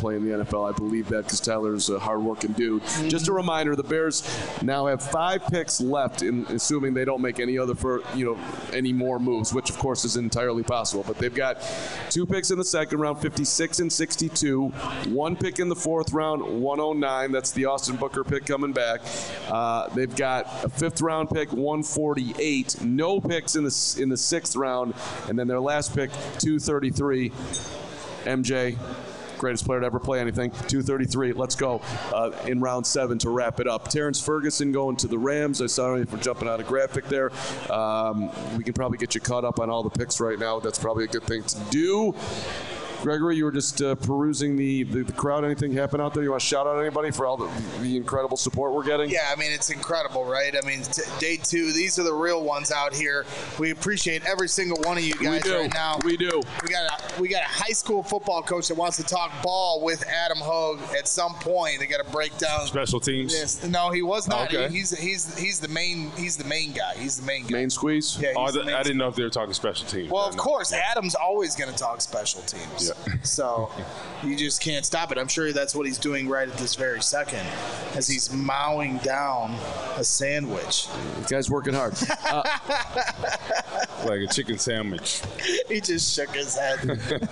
play in the NFL. I believe that because Tyler's a hard-working dude. Mm-hmm. Just a reminder, the Bears now have 5 picks left, assuming they don't make any any more moves, which of course is entirely possible. But they've got 2 picks in the second round, 56 and 62. 1 pick in the fourth round, 109. That's the Austin Booker pick coming back. They've got a 5th round pick, 148. No picks in the 6th round, and then their last pick, 233. MJ, greatest player to ever play anything, 233. Let's go in round 7 to wrap it up. Terrence Ferguson going to the Rams. I saw you for jumping out a graphic there. We can probably get you caught up on all the picks right now. That's probably a good thing to do. Gregory, you were just perusing the crowd. Anything happen out there? You want to shout out anybody for all the incredible support we're getting? Yeah, I mean, it's incredible, right? I mean, day 2, these are the real ones out here. We appreciate every single one of you guys right now. We do. We got a high school football coach that wants to talk ball with Adam Hogue at some point. They got to break down special teams. Yes. No, he was not. Okay. He's the main guy. He's the main guy. Main squeeze? Yeah, I didn't know if they were talking special teams. Well, of course, Adam's always going to talk special teams. Yeah. So you just can't stop it. I'm sure that's what he's doing right at this very second as he's mowing down a sandwich. The guy's working hard. Like a chicken sandwich. He just shook his head.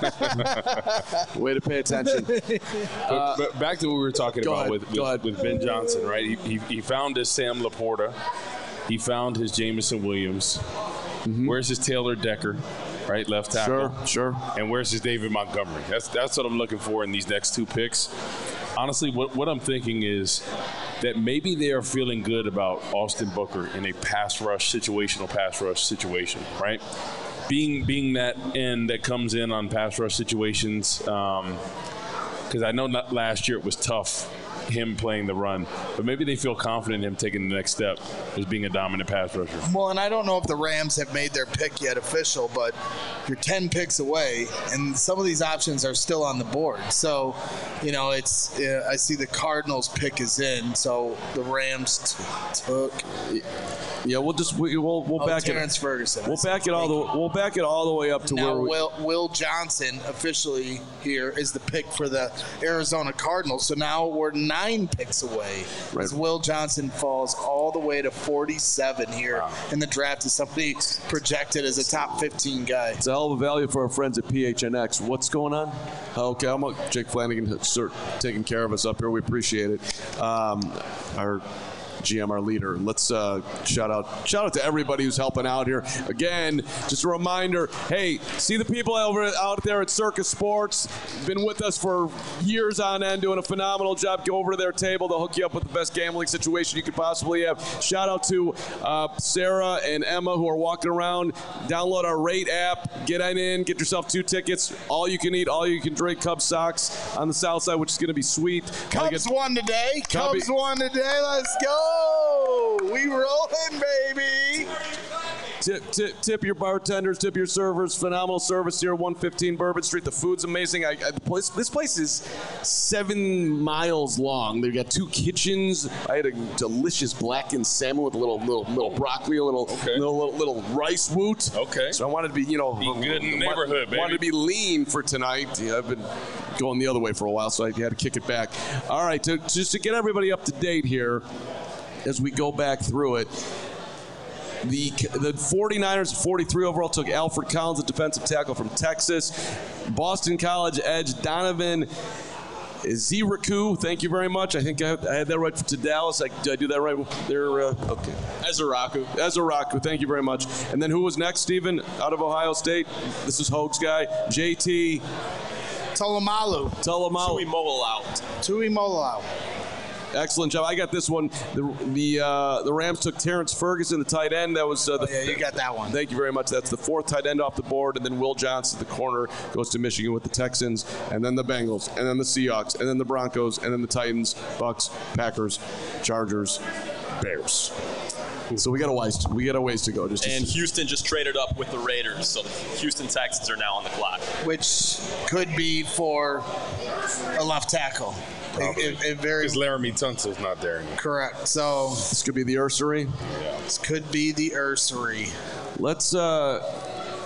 Way to pay attention. But back to what we were talking about with Ben Johnson, right? He found his Sam Laporta. He found his Jameson Williams. Mm-hmm. Where's his Taylor Decker? Right, left tackle. Sure. And where's his David Montgomery? That's what I'm looking for in these next 2 picks. Honestly, what I'm thinking is that maybe they are feeling good about Austin Booker in a situational pass rush situation, right? Being that end that comes in on pass rush situations, because I know last year it was tough, him playing the run, but maybe they feel confident in him taking the next step as being a dominant pass rusher. Well, and I don't know if the Rams have made their pick yet official, but you're 10 picks away, and some of these options are still on the board. So, it's I see the Cardinals pick is in, so the Rams took. Yeah, we'll back Terrence Ferguson. We'll back it all the way up to now, where Will Johnson officially here is the pick for the Arizona Cardinals. So now we're 9 picks away. Right. As Will Johnson falls all the way to 47 here in the draft as somebody projected as a top 15 guy. It's a hell of a value for our friends at PHNX. What's going on? Okay, I'm Jake Flanagan start taking care of us up here. We appreciate it. Our GM, our leader. Let's shout out to everybody who's helping out here. Again, just a reminder, hey, see the people out there at Circus Sports, been with us for years on end, doing a phenomenal job. Go over to their table. They'll hook you up with the best gambling situation you could possibly have. Shout out to Sarah and Emma who are walking around. Download our Rate app. Get in, get yourself 2 tickets. All you can eat, all you can drink. Cubs Sox on the south side, which is going to be sweet. Cubs won today. Cubs won today. Let's go. We rolling, baby. Tip your bartenders, tip your servers. Phenomenal service here, 115 Bourbon Street. The food's amazing. This place is 7 miles long. They've got 2 kitchens. I had a delicious blackened salmon with a little broccoli, a little rice woot. Okay. So I wanted to be, good in the neighborhood, baby. Wanted to be lean for tonight. Yeah, I've been going the other way for a while, so I had to kick it back. All right, just to get everybody up to date here, as we go back through it, the 49ers, 43 overall, took Alfred Collins, a defensive tackle from Texas. Boston College edge Donovan Eziraku, thank you very much. I think I had that right to Dallas. Did I do that right? Okay. Eziraku, thank you very much. And then who was next, Stephen, out of Ohio State? This is Hogue's guy. JT Tuimoloau. Tuimoloau. Excellent job. I got this one. The Rams took Terrence Ferguson, the tight end. That was you got that one. Thank you very much. That's the 4th tight end off the board, and then Will Johnson, the corner, goes to Michigan with the Texans, and then the Bengals, and then the Seahawks, and then the Broncos, and then the Titans, Bucks, Packers, Chargers, Bears. So we got a ways to go. And Houston just traded up with the Raiders, so the Houston Texans are now on the clock. Which could be for a left tackle. Because Laramie Tunsil's not there anymore. Correct. So this could be the Ursery. Yeah. This could be the Ursery. Let's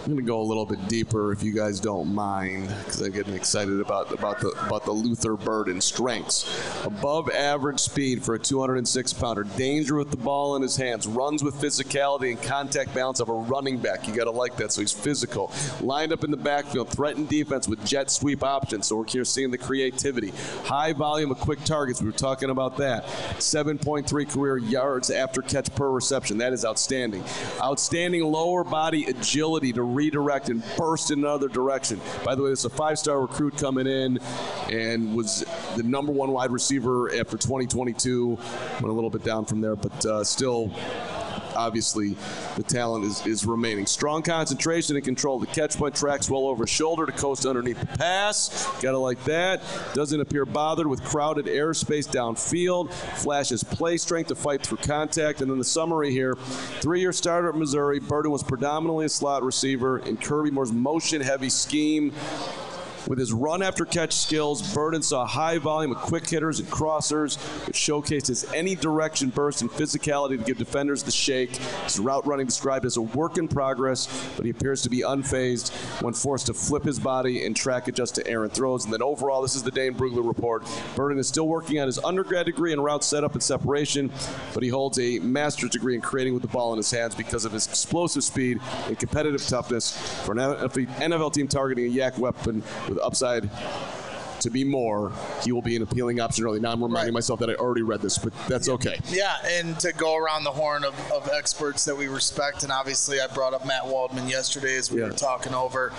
I'm going to go a little bit deeper if you guys don't mind, because I'm getting excited about the Luther Burden strengths. Above average speed for a 206-pounder. Danger with the ball in his hands. Runs with physicality and contact balance of a running back. You got to like that, so he's physical. Lined up in the backfield. Threatened defense with jet sweep options, so we're here seeing the creativity. High volume of quick targets. We were talking about that. 7.3 career yards after catch per reception. That is outstanding. Outstanding lower body agility to redirect and burst in another direction. By the way, this is a 5-star recruit coming in and was the number 1 wide receiver after 2022. Went a little bit down from there, but still, obviously, the talent is remaining. Strong concentration and control. The catch point tracks well over his shoulder to coast underneath the pass. Gotta like that. Doesn't appear bothered with crowded airspace downfield. Flashes play strength to fight through contact. And then the summary here. 3-year starter at Missouri. Burden was predominantly a slot receiver in Kirby Moore's motion-heavy scheme. With his run-after-catch skills, Burden saw a high volume of quick hitters and crossers, which showcased his any-direction burst and physicality to give defenders the shake. His route running described as a work in progress, but he appears to be unfazed when forced to flip his body and track adjust to errant throws. And then overall, this is the Dane Brugler report. Burden is still working on his undergrad degree in route setup and separation, but he holds a master's degree in creating with the ball in his hands because of his explosive speed and competitive toughness. For an NFL team targeting a yak weapon with upside to be more, he will be an appealing option early. Now I'm reminding myself that I already read this, but that's okay. Yeah, and to go around the horn of experts that we respect, and obviously I brought up Matt Waldman yesterday as we were talking over,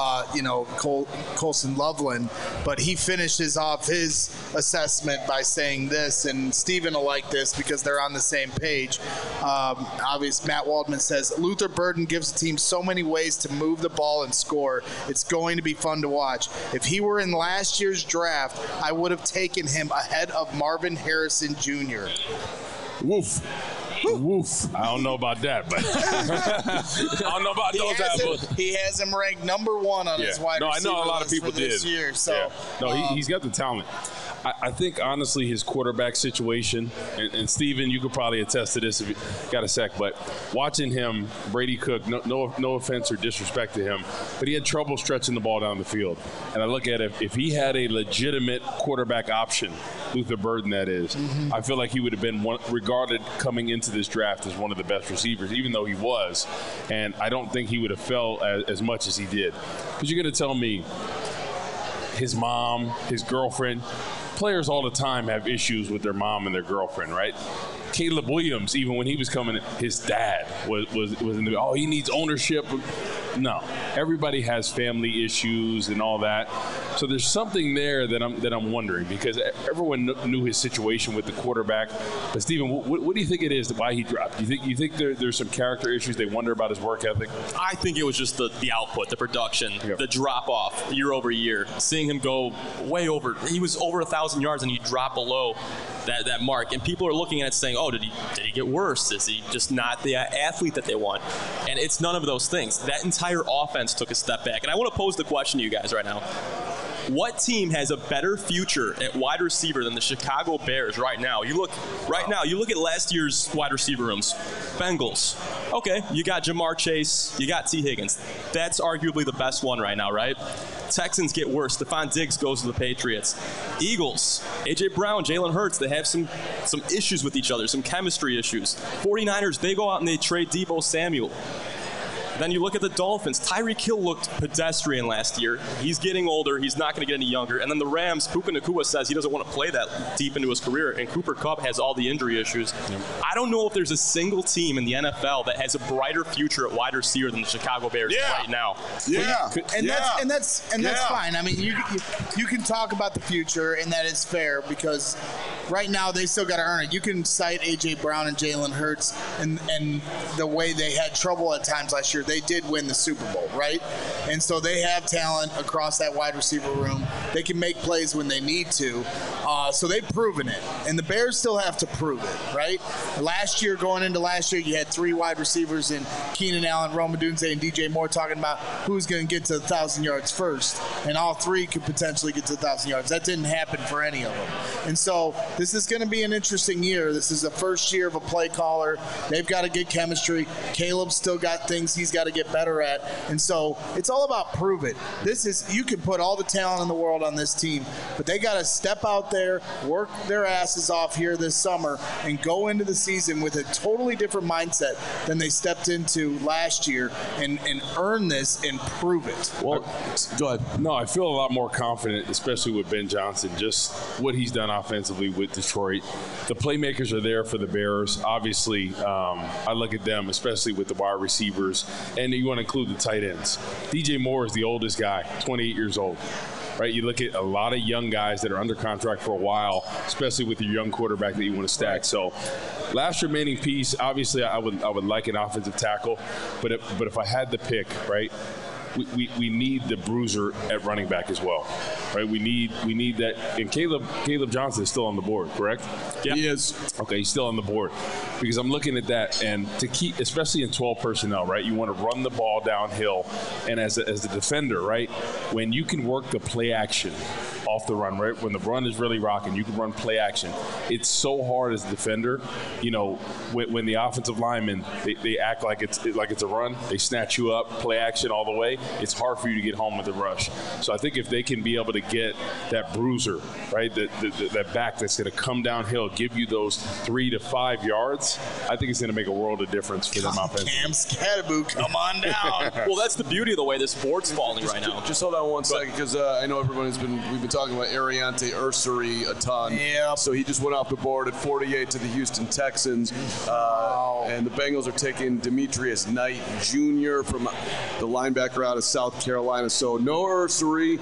Colson Loveland, but he finishes off his assessment by saying this, and Steven will like this because they're on the same page. Obviously, Matt Waldman says, Luther Burden gives the team so many ways to move the ball and score. It's going to be fun to watch. If he were in last year's draft, I would have taken him ahead of Marvin Harrison Jr. Woof. Woof. I don't know about that, but I don't know about those apples. He has him ranked number 1 on his wide receiver I know a lot of people for this did. year. So, he's got the talent. I think, honestly, his quarterback situation, and Steven, you could probably attest to this if you got a sec, but watching him, Brady Cook, no offense or disrespect to him, but he had trouble stretching the ball down the field. And I look at it, if he had a legitimate quarterback option, Luther Burden that is, I feel like he would have been regarded coming into this draft as one of the best receivers, even though he was. And I don't think he would have fell as much as he did. Because you're going to tell me his mom, his girlfriend, players all the time have issues with their mom and their girlfriend, right? Caleb Williams, even when he was coming, his dad was in the, he needs ownership. No, everybody has family issues and all that. So there's something there that I'm wondering, because everyone knew his situation with the quarterback. But Steven, what do you think it is why he dropped? You think there's some character issues? They wonder about his work ethic. I think it was just the output, the production, the drop off year over year. Seeing him go way over, he was over 1,000 yards and he dropped below that mark, and people are looking at it saying, did he get worse? Is he just not the athlete that they want? And it's none of those things. That entire offense took a step back. And I want to pose the question to you guys right now. What team has a better future at wide receiver than the Chicago Bears right now? You look at last year's wide receiver rooms. Bengals. Okay, you got Jamar Chase, you got T. Higgins. That's arguably the best one right now, right? Texans get worse. Stephon Diggs goes to the Patriots. Eagles, A.J. Brown, Jalen Hurts, they have some issues with each other, some chemistry issues. 49ers, they go out and they trade Deebo Samuel. Then you look at the Dolphins. Tyreek Hill looked pedestrian last year. He's getting older. He's not going to get any younger. And then the Rams, Puka Nacua says he doesn't want to play that deep into his career, and Cooper Kupp has all the injury issues. Yep. I don't know if there's a single team in the NFL that has a brighter future at wide receiver than the Chicago Bears right now. That's fine. I mean, you can talk about the future, and that is fair, because right now they still got to earn it. You can cite A.J. Brown and Jalen Hurts and the way they had trouble at times last year. They did win the Super Bowl, right? And so they have talent across that wide receiver room. They can make plays when they need to. So they've proven it. And the Bears still have to prove it, right? Going into last year, you had 3 wide receivers in Keenan Allen, Rome Odunze, and DJ Moore talking about who's going to get to 1,000 yards first. And all 3 could potentially get to 1,000 yards. That didn't happen for any of them. And so this is going to be an interesting year. This is the first year of a play caller. They've got to get chemistry. Caleb's still got things he's got to get better at. And so it's all about prove it. You can put all the talent in the world on this team, but they got to step out there, work their asses off here this summer, and go into the season with a totally different mindset than they stepped into last year and earn this and prove it. Well, go ahead. No, I feel a lot more confident, especially with Ben Johnson, just what he's done offensively with Detroit. The playmakers are there for the Bears. Obviously, I look at them, especially with the wide receivers, and you want to include the tight ends. DJ Moore is the oldest guy, 28 years old. Right, you look at a lot of young guys that are under contract for a while, especially with your young quarterback that you want to stack. So, last remaining piece, obviously, I would like an offensive tackle, but if I had to pick, right, we need the bruiser at running back as well, right? We need that. And Caleb Johnson is still on the board, correct? Yeah. He is. Okay, he's still on the board because I'm looking at that, and to keep, especially in 12 personnel, right? You want to run the ball downhill, and as a defender, right? When you can work the play action off the run, right? When the run is really rocking, you can run play action. It's so hard as a defender, when the offensive linemen, they act like it's a run, they snatch you up, play action all the way. It's hard for you to get home with the rush. So I think if they can be able to get that bruiser, right, that back that's going to come downhill, give you those 3 to 5 yards, I think it's going to make a world of difference for them offensively. Cam Scattaboo, come on down. Well, that's the beauty of the way this board's falling right now. Just hold on one second, because I know we've been talking about Ariante Ursary a ton. Yeah. So he just went off the board at 48 to the Houston Texans. Wow. And the Bengals are taking Demetrius Knight Jr. from the linebacker out of South Carolina. So no Ursary.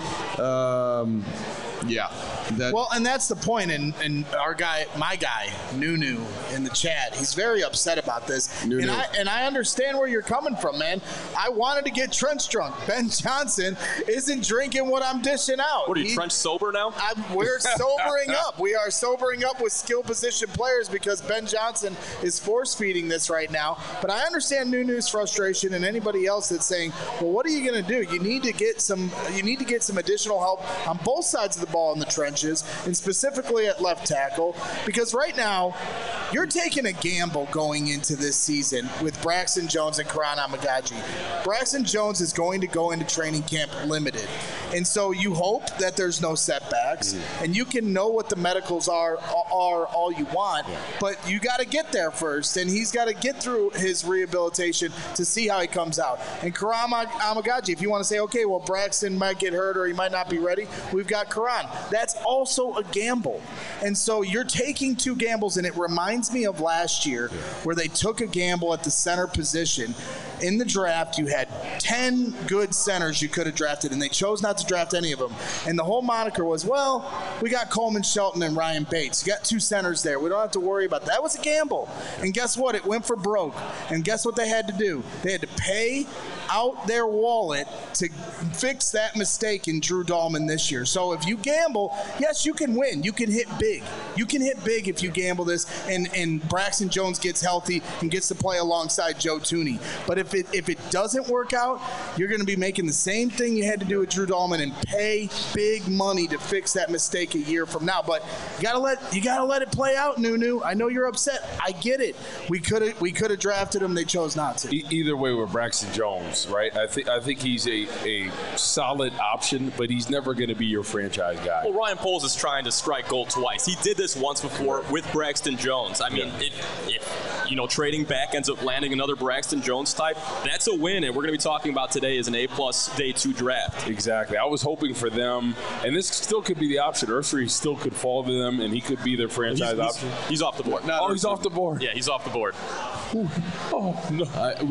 And that's the point. And my guy, Nunu, in the chat, he's very upset about this. Nunu. And I understand where you're coming from, man. I wanted to get Trench drunk. Ben Johnson isn't drinking what I'm dishing out. What are you, Trench sober now? We're sobering up. We are sobering up with skill position players because Ben Johnson is force feeding this right now. But I understand Nunu's frustration and anybody else that's saying, well, what are you going to do? You need to get some additional help on both sides of the ball in the trenches, and specifically at left tackle, because right now you're taking a gamble going into this season with Braxton Jones and Karan Amagaji. Braxton Jones is going to go into training camp limited, and so you hope that there's no setbacks, and you can know what the medicals are all you want, but you got to get there first, and he's got to get through his rehabilitation to see how he comes out. And Karan Amagaji, if you want to say, okay, well, Braxton might get hurt or he might not be ready, we've got Karan. That's also a gamble. And so you're taking two gambles, and it reminds me of last year where they took a gamble at the center position. In the draft, you had 10 good centers you could have drafted, and they chose not to draft any of them. And the whole moniker was, well, we got Coleman Shelton and Ryan Bates. You got two centers there. We don't have to worry about that. That was a gamble. And guess what? It went for broke. And guess what they had to do? They had to pay out their wallet to fix that mistake in Drew Dahlman this year. So if you gamble, yes, you can win. You can hit big. You can hit big if you gamble this, and Braxton Jones gets healthy and gets to play alongside Joe Thuney. But if it doesn't work out, you're going to be making the same thing you had to do with Drew Dahlman and pay big money to fix that mistake a year from now. But you gotta let it play out, Nunu. I know you're upset. I get it. We could have drafted him. They chose not to. Either way with Braxton Jones, right? I think he's a solid option, but he's never going to be your franchise guy. Well, Ryan Poles is trying to strike gold twice. He did this once before with Braxton Jones. I mean, if trading back ends up landing another Braxton Jones type, that's a win, and we're going to be talking about today as an A-plus day 2 draft. Exactly. I was hoping for them, and this still could be the option. Ursary still could fall to them, and he could be their franchise option. He's off the board. He's off the board. Yeah, he's off the board. Oh no.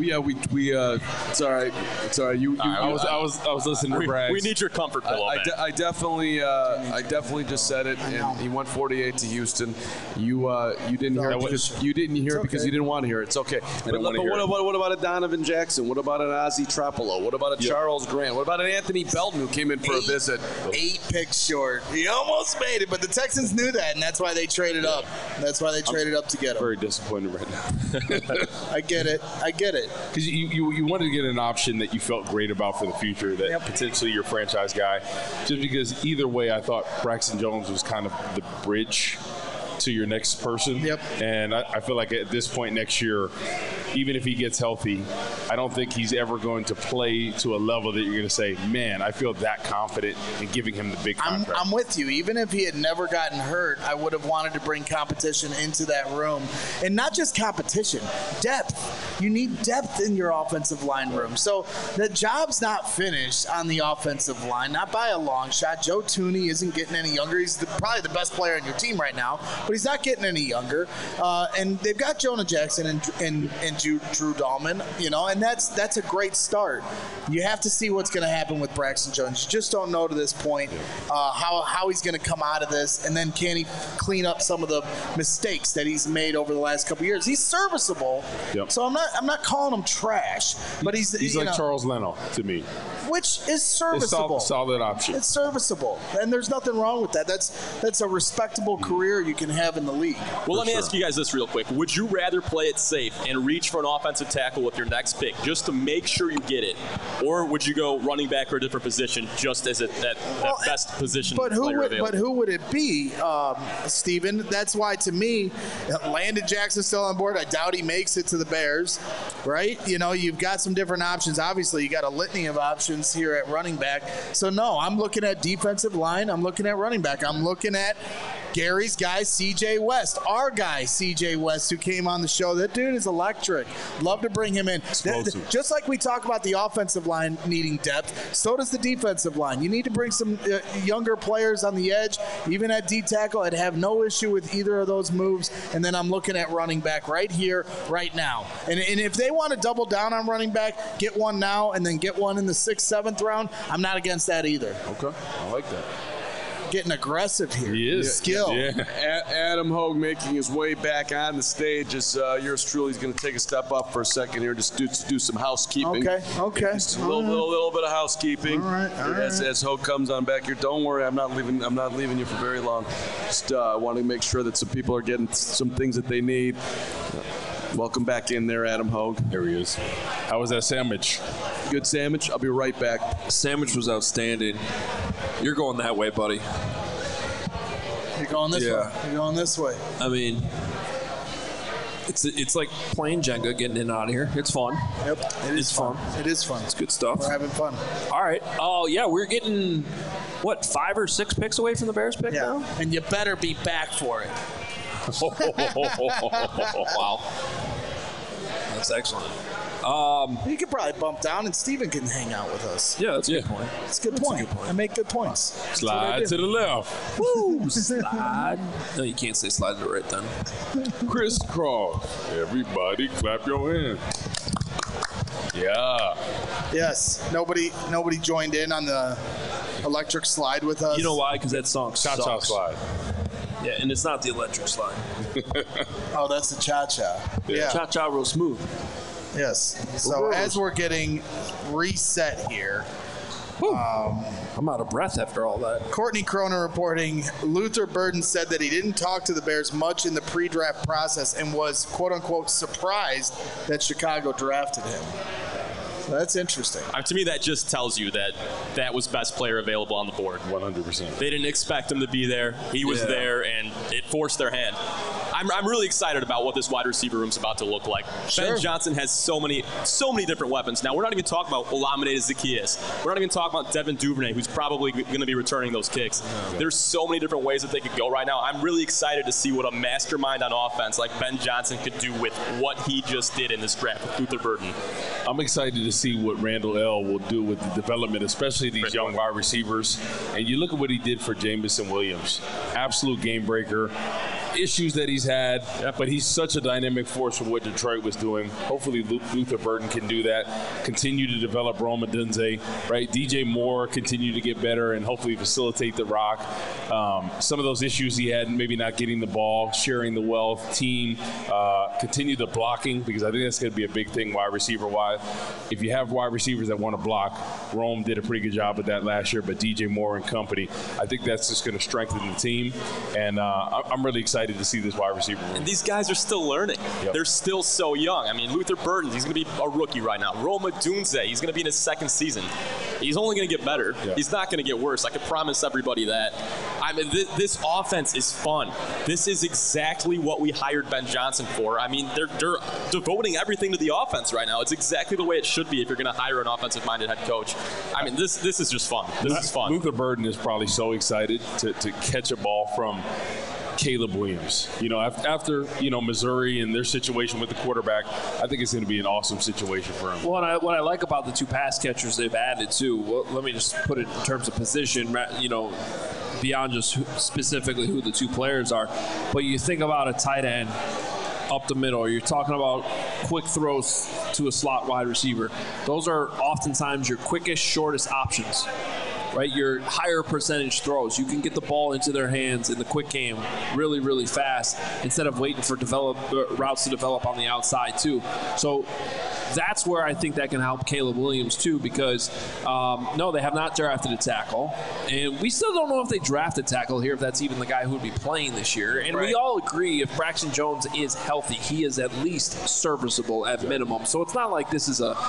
It's all right. It's all right. I was listening to Braggs. We need your comfort pillow. I definitely just said it, and he went 48 to Houston. You didn't hear it because you didn't hear it because you didn't want to hear it. It's okay. But what about a Donovan Jackson? What about an Ozzie Trapolo? What about a Charles Grant? What about an Anthony Belton who came in for a visit? 8 picks short. He almost made it, but the Texans knew that, and that's why they traded up. That's why they traded up to get him. Very disappointed right now. I get it. Because you wanted to get an option that you felt great about for the future, that potentially your franchise guy. Just because either way, I thought Braxton Jones was kind of the bridge to your next person. Yep. And I feel like at this point next year, even if he gets healthy, I don't think he's ever going to play to a level that you're going to say, man, I feel that confident in giving him the big contract. I'm with you. Even if he had never gotten hurt, I would have wanted to bring competition into that room. And not just competition, depth. You need depth in your offensive line room. So the job's not finished on the offensive line, not by a long shot. Joe Thuney isn't getting any younger. He's probably the best player on your team right now, but he's not getting any younger. And they've got Jonah Jackson and Drew Dahlman, and that's a great start. You have to see what's going to happen with Braxton Jones. You just don't know to this point how he's going to come out of this, and then can he clean up some of the mistakes that he's made over the last couple of years. He's serviceable, so I'm not calling him trash, but he's like Charles Leno to me, which is serviceable. It's solid option. It's serviceable, and there's nothing wrong with that. That's a respectable career you can have in the league. Well, let me ask you guys this real quick. Would you rather play it safe and reach for an offensive tackle with your next pick just to make sure you get it, or would you go running back or a different position just as that best position player available? But who would it be, Steven? That's why, to me, Landon Jackson's still on board. I doubt he makes it to the Bears, right? You've got some different options. Obviously, you got a litany of options here at running back. So, no, I'm looking at defensive line. I'm looking at running back. I'm looking at Gary's guy, C.J. West, our guy, C.J. West, who came on the show. That dude is electric. Love to bring him in. Just like we talk about the offensive line needing depth, so does the defensive line. You need to bring some younger players on the edge, even at D-tackle. I'd have no issue with either of those moves. And then I'm looking at running back right here, right now. And if they want to double down on running back, get one now and then get one in the 6th, 7th round, I'm not against that either. Okay, I like that. Getting aggressive here. He is. Skill. Yeah. Adam Hogue making his way back on the stage as yours truly is going to take a step up for a second here, just do some housekeeping. Okay. Just a little bit of housekeeping. All right. As Hogue comes on back here, don't worry, I'm not leaving you for very long. Just want to make sure that some people are getting some things that they need. Welcome back in there, Adam Hogue. There he is. How was that sandwich? Good sandwich. I'll be right back. Sandwich was outstanding. You're going that way, buddy. You're going this way. You're going this way. I mean, it's like playing Jenga, getting in and out of here. It's fun. Yep. It's fun. It is fun. It's good stuff. We're having fun. All right. Oh, yeah, we're getting, 5 or 6 picks away from the Bears pick now? And you better be back for it. Wow. That's excellent. You could probably bump down and Steven can hang out with us. Yeah, that's a good point. It's a good point. I make good points. Slide to the left. Woo! Slide. No, you can't say slide to the right then. Crisscross. Everybody clap your hands. Yeah. Yes. Nobody joined in on the electric slide with us. You know why? Because that song sucks. Cha-cha slide. Yeah, and it's not the electric slide. Oh, that's the cha-cha. Yeah. Cha-cha real smooth. Yes. So as we're getting reset here, I'm out of breath after all that. Courtney Cronin reporting, Luther Burden said that he didn't talk to the Bears much in the pre-draft process and was, quote-unquote, surprised that Chicago drafted him. So that's interesting. To me, that just tells you that was best player available on the board. 100%. They didn't expect him to be there. He was there, and it forced their hand. I'm really excited about what this wide receiver room's about to look like. Sure. Ben Johnson has so many different weapons. Now, we're not even talking about Olamide Zaccheaus. We're not even talking about Devin Duvernay, who's probably going to be returning those kicks. There's so many different ways that they could go right now. I'm really excited to see what a mastermind on offense like Ben Johnson could do with what he just did in this draft with Luther Burden. I'm excited to see what Randall L. will do with the development, especially these young wide receivers. And you look at what he did for Jameson Williams. Absolute game breaker. Issues that he's had, but he's such a dynamic force for what Detroit was doing. Hopefully Luther Burden can do that, continue to develop Rome Odunze, right? DJ Moore continue to get better and hopefully facilitate the rock. Some of those issues he had, maybe not getting the ball, sharing the wealth, team, continue the blocking, because I think that's going to be a big thing wide receiver-wise. If you have wide receivers that want to block, Rome did a pretty good job with that last year, but DJ Moore and company, I think that's just going to strengthen the team, and I'm really excited excited to see this wide receiver room. And these guys are still learning. Yep. They're still so young. I mean, Luther Burden, he's going to be a rookie right now. Roma Dunze, he's going to be in his second season. He's only going to get better. Yep. He's not going to get worse. I can promise everybody that. I mean, this offense is fun. This is exactly what we hired Ben Johnson for. I mean, they're devoting everything to the offense right now. It's exactly the way it should be if you're going to hire an offensive-minded head coach. I mean, this is just fun. This is fun. Luther Burden is probably so excited to catch a ball from Caleb Williams. You know, after Missouri and their situation with the quarterback, I think it's going to be an awesome situation for him. Well, what I like about the two pass catchers they've added too, well, let me just put it in terms of position, beyond just specifically who the two players are. But you think about a tight end up the middle, you're talking about quick throws to a slot wide receiver. Those are oftentimes your quickest, shortest options. Right, your higher percentage throws. You can get the ball into their hands in the quick game really, really fast instead of waiting for routes to develop on the outside too. So that's where I think that can help Caleb Williams too, because no, they have not drafted a tackle, and we still don't know if they draft a tackle here, if that's even the guy who would be playing this year. And we all agree if Braxton Jones is healthy, he is at least serviceable at minimum. So it's not like this is a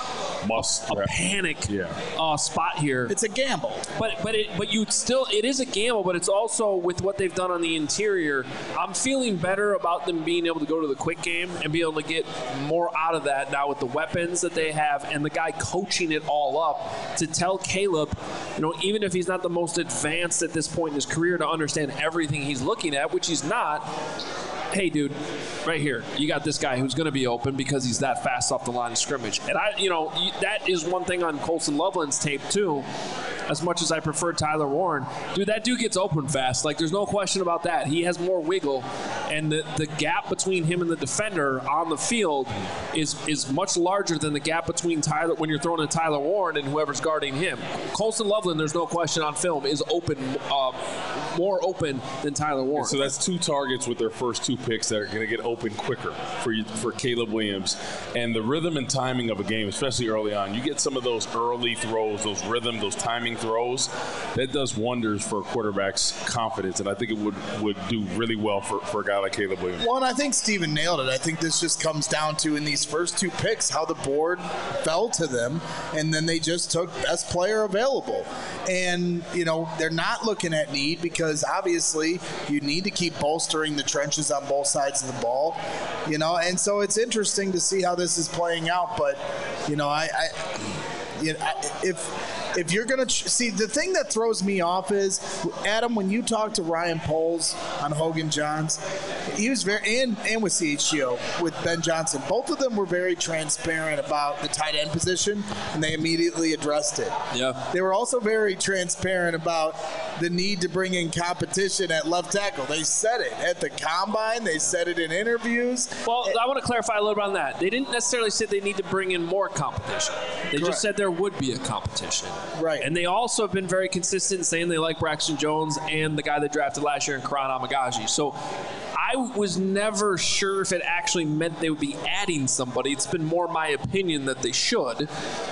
panic spot here. It's a gamble. But you still, it is a gamble, but it's also with what they've done on the interior. I'm feeling better about them being able to go to the quick game and be able to get more out of that now with the weapons that they have and the guy coaching it all up to tell Caleb, even if he's not the most advanced at this point in his career to understand everything he's looking at, which he's not. Hey, dude, right here, you got this guy who's going to be open because he's that fast off the line of scrimmage. And that is one thing on Colson Loveland's tape too. As much as I prefer Tyler Warren, dude, that dude gets open fast. Like, there's no question about that. He has more wiggle, and the gap between him and the defender on the field is much larger than the gap between Tyler when you're throwing to Tyler Warren and whoever's guarding him. Colson Loveland, there's no question on film, is open, more open than Tyler Warren. So that's two targets with their first two picks that are going to get open quicker for Caleb Williams. And the rhythm and timing of a game, especially early on, you get some of those early throws, those rhythm, those timing throws, that does wonders for a quarterback's confidence, and I think it would do really well for a guy like Caleb Williams. Well, and I think Steven nailed it. I think this just comes down to, in these first two picks, how the board fell to them, and then they just took best player available. And, they're not looking at need because obviously you need to keep bolstering the trenches on both sides of the ball, and so it's interesting to see how this is playing out. But, if you're going to see, the thing that throws me off is, Adam, when you talk to Ryan Poles on Hogan Johns, he was very, and with CHGO, with Ben Johnson, both of them were very transparent about the tight end position, and they immediately addressed it. Yeah. They were also very transparent about the need to bring in competition at left tackle. They said it at the combine. They said it in interviews. Well, I want to clarify a little bit on that. They didn't necessarily say they need to bring in more competition. They just said there would be a competition. Right. And they also have been very consistent in saying they like Braxton Jones and the guy they drafted last year in Karan Amagaji. So I was never sure if it actually meant they would be adding somebody. It's been more my opinion that they should.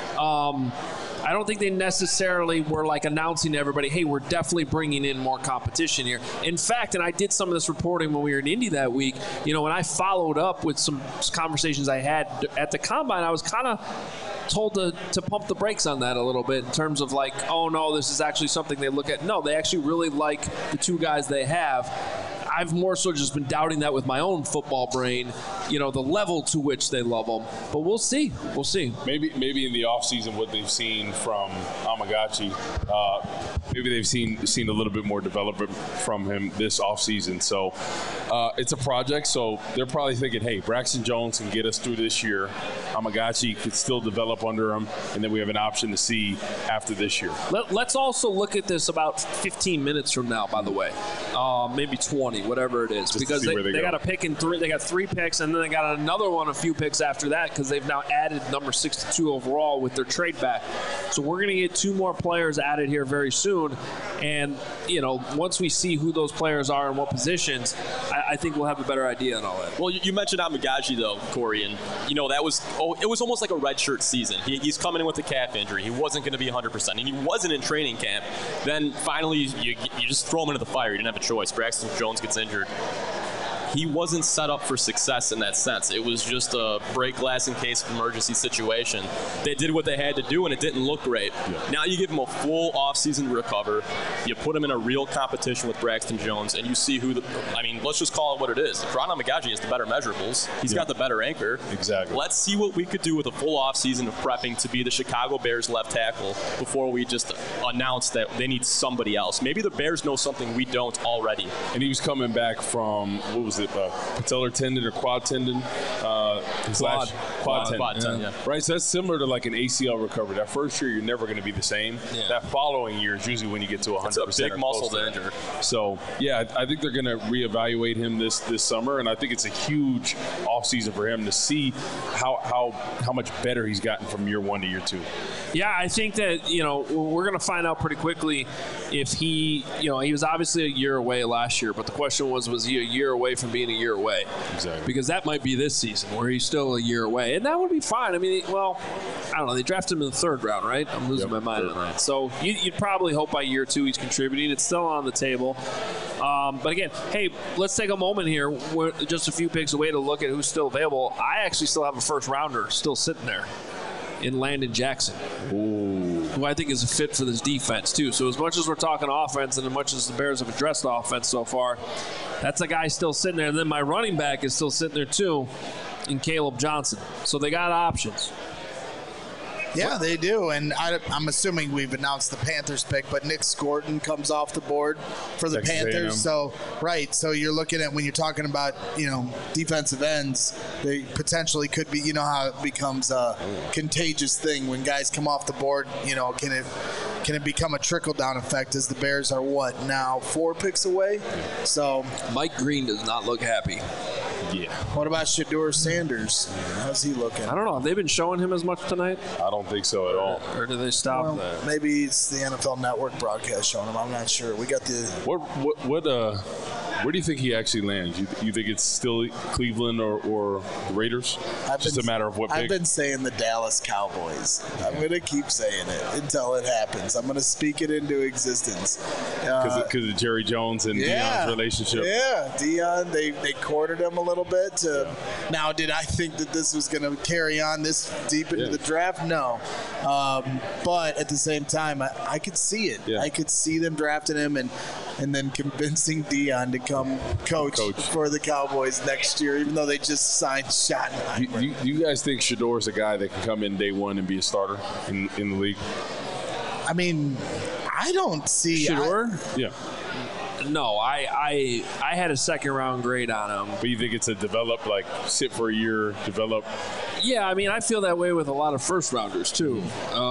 I don't think they necessarily were announcing to everybody, hey, we're definitely bringing in more competition here. In fact, and I did some of this reporting when we were in Indy that week, when I followed up with some conversations I had at the Combine, I was kind of told to pump the brakes on that a little bit in terms of oh no, this is actually something they look at. No, they actually really like the two guys they have. I've more so just been doubting that with my own football brain, the level to which they love them. But we'll see. We'll see. Maybe in the offseason what they've seen from Amagachi, maybe they've seen a little bit more development from him this offseason. So it's a project, so they're probably thinking, hey, Braxton Jones can get us through this year. Amagachi could still develop under him, and then we have an option to see after this year. Let's also look at this about 15 minutes from now, by the way. Maybe 20, whatever it is. Because they got a pick in three. They got 3 picks, and then they got another one, a few picks after that, because they've now added number 62 overall with their trade back. So we're going to get 2 more players added here very soon. And, once we see who those players are and what positions, I think we'll have a better idea on all that. Well, you mentioned Amagaji, though, Corey, and, it was almost like a redshirt season. He's coming in with a calf injury. He wasn't going to be 100%, and he wasn't in training camp. Then finally, you just throw him into the fire. You didn't have a choice. Braxton Jones gets injured. he wasn't set up for success in that sense. It was just a break glass in case of emergency situation. They did what they had to do, and it didn't look great. Yeah. Now you give him a full offseason to recover. You put him in a real competition with Braxton Jones, and you see let's just call it what it is. Rana Magaji has the better measurables. He's got the better anchor. Exactly. Let's see what we could do with a full offseason of prepping to be the Chicago Bears left tackle before we just announce that they need somebody else. Maybe the Bears know something we don't already. And he was coming back from, what was it, patellar tendon or quad tendon? Quad tendon. Yeah. Right, so that's similar to like an ACL recovery. That first year, you're never going to be the same. Yeah. That following year is usually when you get to 100%. It's a big muscle to injure. So, yeah, I think they're going to reevaluate him this summer, and I think it's a huge offseason for him to see how much better he's gotten from year one to year two. Yeah, I think that, we're going to find out pretty quickly if he was obviously a year away last year, but the question was he a year away from being a year away? Exactly. Because that might be this season where he's still a year away, and that would be fine. I mean, I don't know. They drafted him in the third round, right? I'm losing my mind on that. So you'd probably hope by year two he's contributing. It's still on the table. But again, hey, let's take a moment here. We're just a few picks away to look at who's still available. I actually still have a first rounder still sitting there in Landon Jackson, who I think is a fit for this defense too. So as much as we're talking offense and as much as the Bears have addressed offense so far, that's a guy still sitting there. And then my running back is still sitting there too in Caleb Johnson. So they got options. Yeah, they do, and I'm assuming we've announced the Panthers pick, but Nick Scorton comes off the board for the Panthers. So you're looking at, when you're talking about, defensive ends, they potentially could be, how it becomes a contagious thing when guys come off the board, can it become a trickle-down effect as the Bears are, now 4 picks away? So Mike Green does not look happy. Yeah. What about Shedeur Sanders? How's he looking? I don't know. Have they been showing him as much tonight? I don't think so at all. Or do they stop that? Maybe it's the NFL Network broadcast showing him. I'm not sure. We got the where do you think he actually lands? You think it's still Cleveland or the Raiders? Just a matter of what pick? I've been saying the Dallas Cowboys. I'm going to keep saying it until it happens. I'm going to speak it into existence. Because of Jerry Jones and Deion's relationship. Yeah, Deion, they courted him a little bit. Now, did I think that this was going to carry on this deep into the draft? No. But at the same time, I could see it. Yeah. I could see them drafting him and then convincing Deion to come coach for the Cowboys next year, even though they just signed Schottenheimer. Do you guys think Shedeur is a guy that can come in day one and be a starter in the league? I mean, I don't see Shedeur. Yeah. No, I had a second round grade on him. But you think it's a develop, like sit for a year, develop? Yeah, I mean, I feel that way with a lot of first rounders too.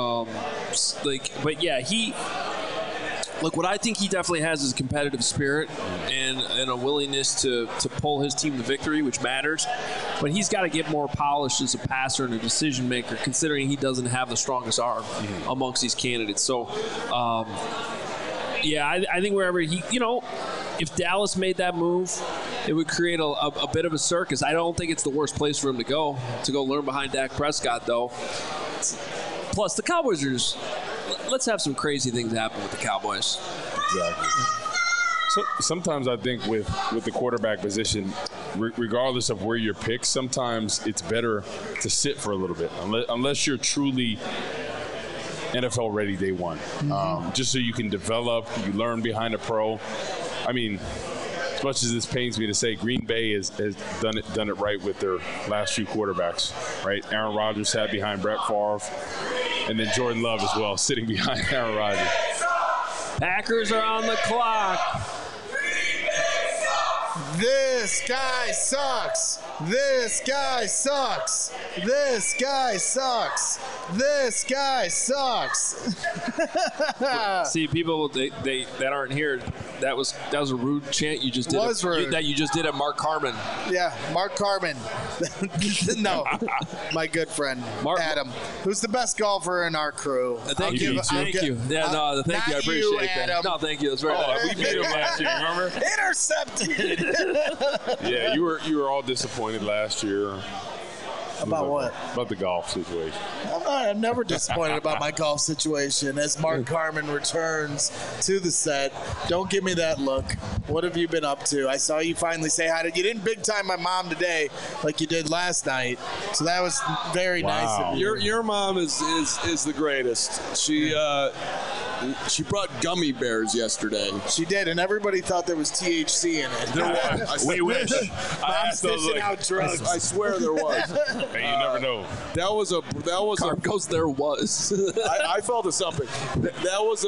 But yeah, look, what I think he definitely has is a competitive spirit and a willingness to pull his team to victory, which matters. But he's got to get more polished as a passer and a decision maker, considering he doesn't have the strongest arm amongst these candidates. So, I think wherever he, if Dallas made that move, it would create a bit of a circus. I don't think it's the worst place for him to go learn behind Dak Prescott, though. Plus, the Cowboys are just... Let's have some crazy things happen with the Cowboys. Exactly. So sometimes I think with the quarterback position, regardless of where you're picked, sometimes it's better to sit for a little bit, unless you're truly NFL ready day one. Just so you can develop, you learn behind a pro. I mean, as much as this pains me to say, Green Bay has done it right with their last few quarterbacks, right? Aaron Rodgers sat behind Brett Favre, and then Jordan Love as well, sitting behind Aaron Rodgers. Packers are on the clock. This guy sucks. This guy sucks. This guy sucks. This guy sucks. See, people that aren't here, that was a rude chant you just did. That you just did at Mark Carman. Yeah, Mark Carman. No, my good friend Adam, who's the best golfer in our crew. Thank you. Thank you. Yeah, no, thank you. I appreciate that. No, thank you. That's very nice. We beat him last year. Remember? Intercepted. Yeah, you were all disappointed last year. About what? About the golf situation. I'm never disappointed about my golf situation as Mark Carman returns to the set. Don't give me that look. What have you been up to? I saw you finally say hi to. You didn't big time my mom today like you did last night, so that was very nice of you. Your mom is the greatest. She brought gummy bears yesterday. She did, and everybody thought there was THC in it. There was. We wish. Mom's dishing out drugs. I swear there was. Hey, you never know. That was Carm goes, there was. I felt it something. That was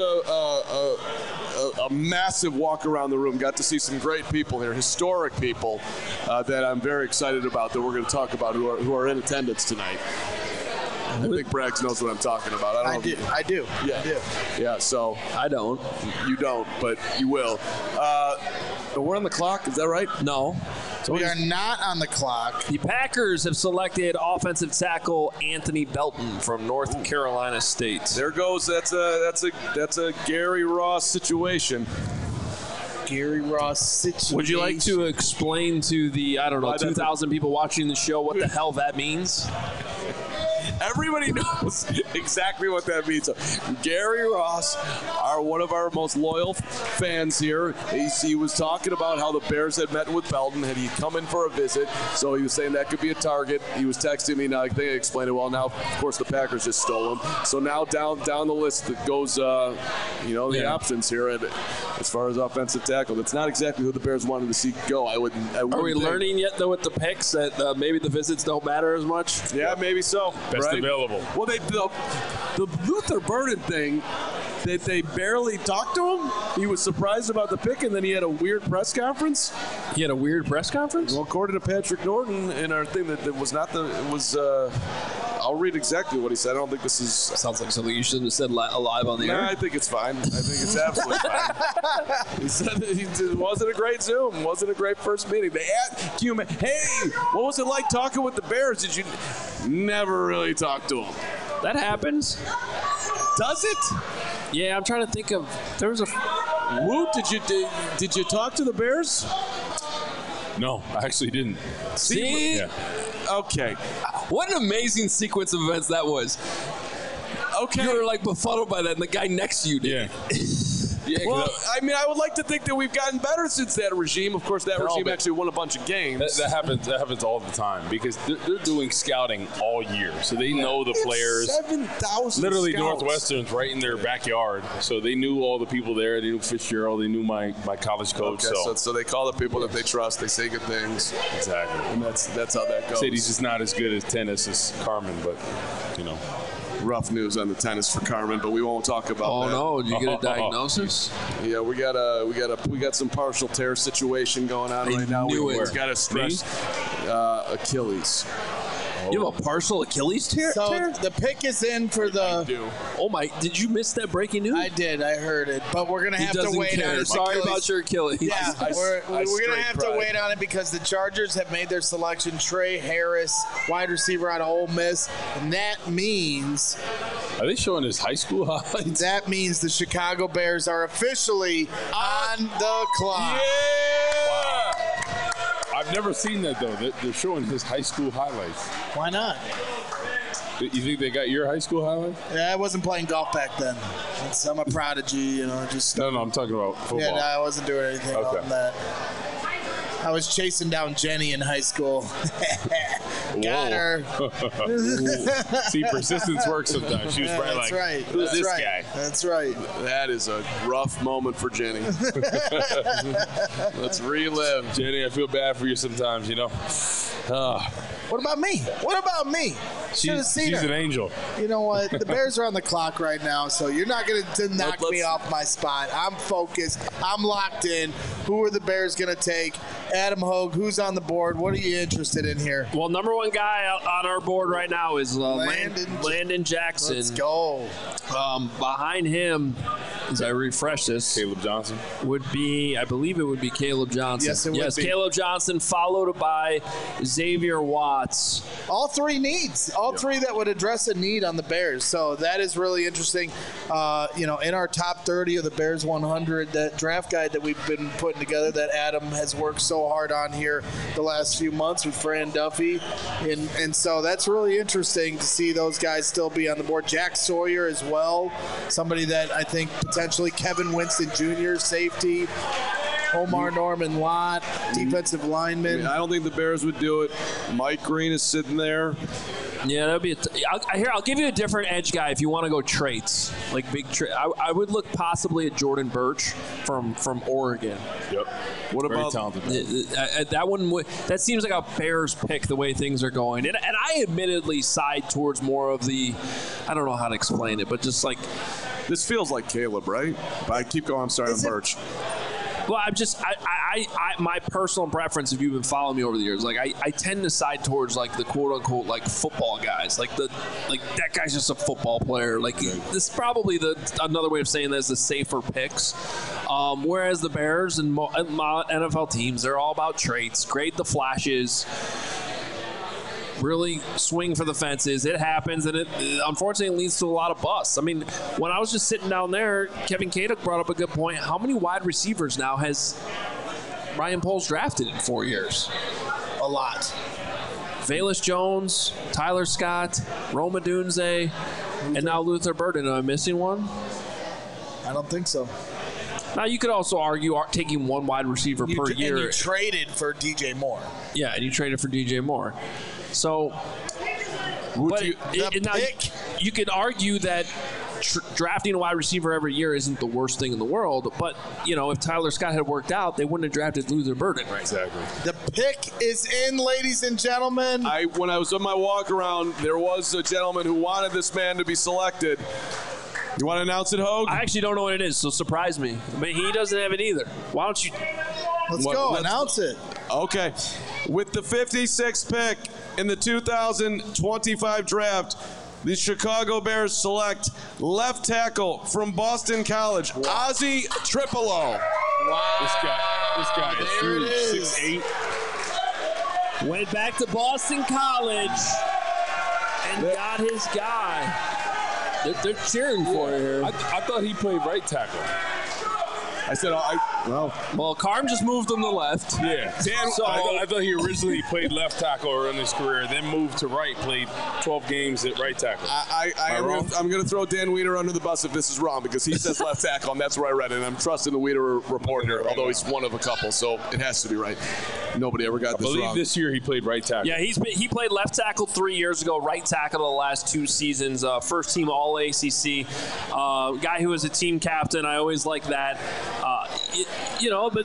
a massive walk around the room. Got to see some great people here, historic people that I'm very excited about that we're going to talk about who are in attendance tonight. I think Braggs knows what I'm talking about. I do. Yeah. Yeah, so. I don't. You don't, but you will. We're on the clock, is that right? No. So we are not on the clock. The Packers have selected offensive tackle Anthony Belton from North Carolina State. There goes. That's a Gary Ross situation. Gary Ross situation. Would you like to explain to the 2,000 people watching the show what the hell that means? Everybody knows exactly what that means. Gary Ross, one of our most loyal fans here, he was talking about how the Bears had met with Belton. Had he come in for a visit? So he was saying that could be a target. He was texting me. Now I think I explained it well. Now, of course, the Packers just stole him. So now down the list that goes, the options here as far as offensive tackle. That's not exactly who the Bears wanted to see go. Are we learning yet, though, with the picks that maybe the visits don't matter as much? Yeah, maybe so. Best right? available. Well, the Luther Burden thing, they barely talked to him. He was surprised about the pick, and then he had a weird press conference. He had a weird press conference? Well, according to Patrick Norton in our thing, that was not the. It was. I'll read exactly what he said. I don't think this is. Sounds like something you shouldn't have said live on the air. I think it's fine. I think it's absolutely fine. He said it wasn't a great Zoom. Wasn't a great first meeting. They asked you, hey, what was it like talking with the Bears? Did you never really talk to them? That happens. Does it? Yeah, I'm trying to think of. There was a. Woot, did you talk to the Bears? No, I actually didn't. See? Yeah. Okay. What an amazing sequence of events that was. Okay. You were like befuddled by that, and the guy next to you did. Yeah. Yeah, well, I mean, I would like to think that we've gotten better since that regime. Of course, that regime actually won a bunch of games. That happens all the time because they're doing scouting all year, so they know the players. 7,000 Literally, scouts. Northwestern's right in their backyard, so they knew all the people there. They knew Fitzgerald. They knew my college coach. Okay, so they call the people that they trust. They say good things. Exactly. And that's how that goes. Said he's just not as good at tennis as Carman, but rough news on the tennis for Carman, but we won't talk about that. Oh no! Did you get a diagnosis? Yeah, we got some partial tear situation going on right now. We've got to stress Achilles. You have a partial Achilles tear? So the pick is in for the. Oh my! Did you miss that breaking news? I did. I heard it, but we're gonna have to wait on it. Sorry about your Achilles. Yeah, we're gonna have to wait on it because the Chargers have made their selection. Trey Harris, wide receiver out of Ole Miss, and that means. Are they showing his high school highlights? That means the Chicago Bears are officially on the clock. Yeah! Wow. I've never seen that, though. They're showing his high school highlights. Why not? You think they got your high school highlights? Yeah, I wasn't playing golf back then. I'm a prodigy, just. No, I'm talking about football. Yeah, no, I wasn't doing anything on that. I was chasing down Jenny in high school. Got her. See, persistence works sometimes. She was probably That's like, right. who's That's this right. guy? That's right. That is a rough moment for Jenny. Let's relive. Jenny, I feel bad for you sometimes, What about me? What about me? Should have seen She's her. an angel. You know what? The Bears are on the clock right now, so you're not going to knock me off my spot. I'm focused. I'm locked in. Who are the Bears going to take? Adam Hogue, who's on the board? What are you interested in here? Well, number one guy on our board right now is Landon Jackson. Let's go. Behind him, as I refresh this. Caleb Johnson. I believe it would be Caleb Johnson. Yes, it would be. Caleb Johnson, followed by Xavier Watts. All three needs. All three that would address a need on the Bears. So that is really interesting. In our top 30 of the Bears 100, that draft guide that we've been putting together that Adam has worked so hard on here the last few months with Fran Duffy. And so that's really interesting to see those guys still be on the board. Jack Sawyer as well, somebody that I think potentially Kevin Winston Jr., safety. Omar Norman Lott, defensive lineman. I don't think the Bears would do it. Mike Green is sitting there. Yeah, that'd be. I'll give you a different edge guy if you want to go traits, like big. I would look possibly at Jordan Birch from Oregon. Yep. What Very about talented? That one? That seems like a Bears pick the way things are going, and I admittedly side towards more of the. I don't know how to explain it, but just like this feels like Caleb, right? But I keep going. I'm sorry, on Birch. Well, my personal preference, if you've been following me over the years, like I tend to side towards like the quote unquote like football guys, like that guy's just a football player. Like this is probably another way of saying this, the safer picks. Whereas the Bears and NFL teams, they're all about traits, grade the flashes. Really swing for the fences. It happens, and it unfortunately leads to a lot of busts. I mean, when I was just sitting down there, Kevin Kaduk brought up a good point. How many wide receivers now has Ryan Poles drafted in 4 years? A lot. Velus Jones, Tyler Scott, Roma Dunze, and now Luther Burden. Am I missing one? I don't think so. Now, you could also argue taking one wide receiver per year. And you traded for DJ Moore. Yeah, and you traded for DJ Moore. So, you could argue that drafting a wide receiver every year isn't the worst thing in the world, but, if Tyler Scott had worked out, they wouldn't have drafted Luther Burden, right? Exactly. The pick is in, ladies and gentlemen. When I was on my walk around, there was a gentleman who wanted this man to be selected. You want to announce it, Hogue? I actually don't know what it is, so surprise me. But he doesn't have it either. Why don't you? Let's go. Announce it. Okay. With the 56th pick in the 2025 draft, the Chicago Bears select left tackle from Boston College, Ozzie Tripolo. Wow. This guy is huge. 6'8". Went back to Boston College and got his guy. They're cheering for you here. I thought he played right tackle. I said, well, Carm just moved him to left. Yeah. I thought he originally played left tackle in his career, then moved to right, played 12 games at right tackle. I'm going to throw Dan Weeder under the bus if this is wrong, because he says left tackle, and that's where I read it. And I'm trusting the Weeder report here, although he's one of a couple, so it has to be right. Nobody ever got this wrong. I believe this year he played right tackle. Yeah, he played left tackle 3 years ago, right tackle the last 2 seasons, first team All-ACC, guy who was a team captain. I always like that. But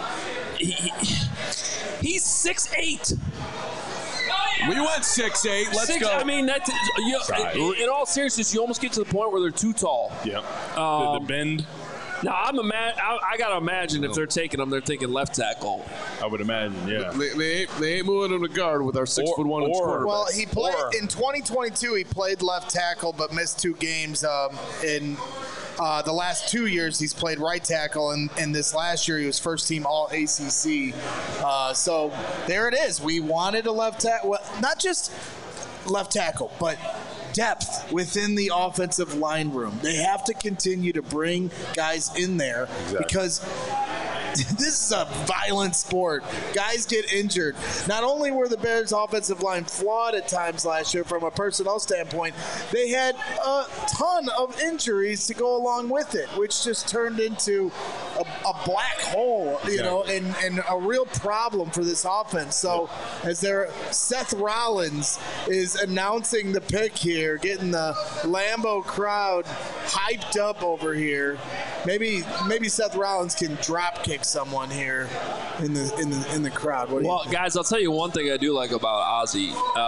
he's 6'8". We went 6'8". Let's go. I mean, in all seriousness, you almost get to the point where they're too tall. Yeah. The bend. Now, I got to imagine if they're taking him, they're thinking left tackle. I would imagine, yeah. They ain't moving him to guard with our 6'1" quarterback. Well, he played in 2022. He played left tackle, but missed 2 games in. The last 2 years, he's played right tackle, and this last year he was first team All-ACC. So there it is. We wanted a left tackle, well, not just left tackle, but depth within the offensive line room. They have to continue to bring guys in there because this is a violent sport. Guys get injured. Not only were the Bears' offensive line flawed at times last year from a personnel standpoint, they had a ton of injuries to go along with it, which just turned into a black hole, and a real problem for this offense. So as Seth Rollins is announcing the pick here, getting the Lambeau crowd hyped up over here, maybe Seth Rollins can drop kick someone here in the crowd. Guys, I'll tell you one thing I do like about Ozzie.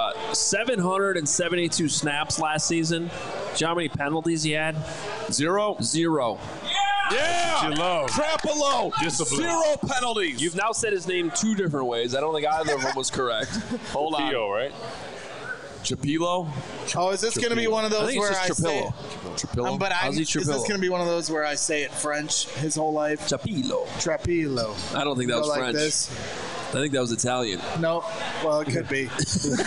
772 snaps last season. Do you know how many penalties he had? Zero. Yeah! Trapolo. 0 penalties. You've now said his name 2 different ways. I don't think either of them was correct. Hold on. Theo, right? Chapilo? Oh, is this going to be one of those where I say it? Trapillo. Is this going to be one of those where I say it French his whole life? Chapilo. Trapilo. I don't think that was like French. This? I think that was Italian. No. Well, it could be.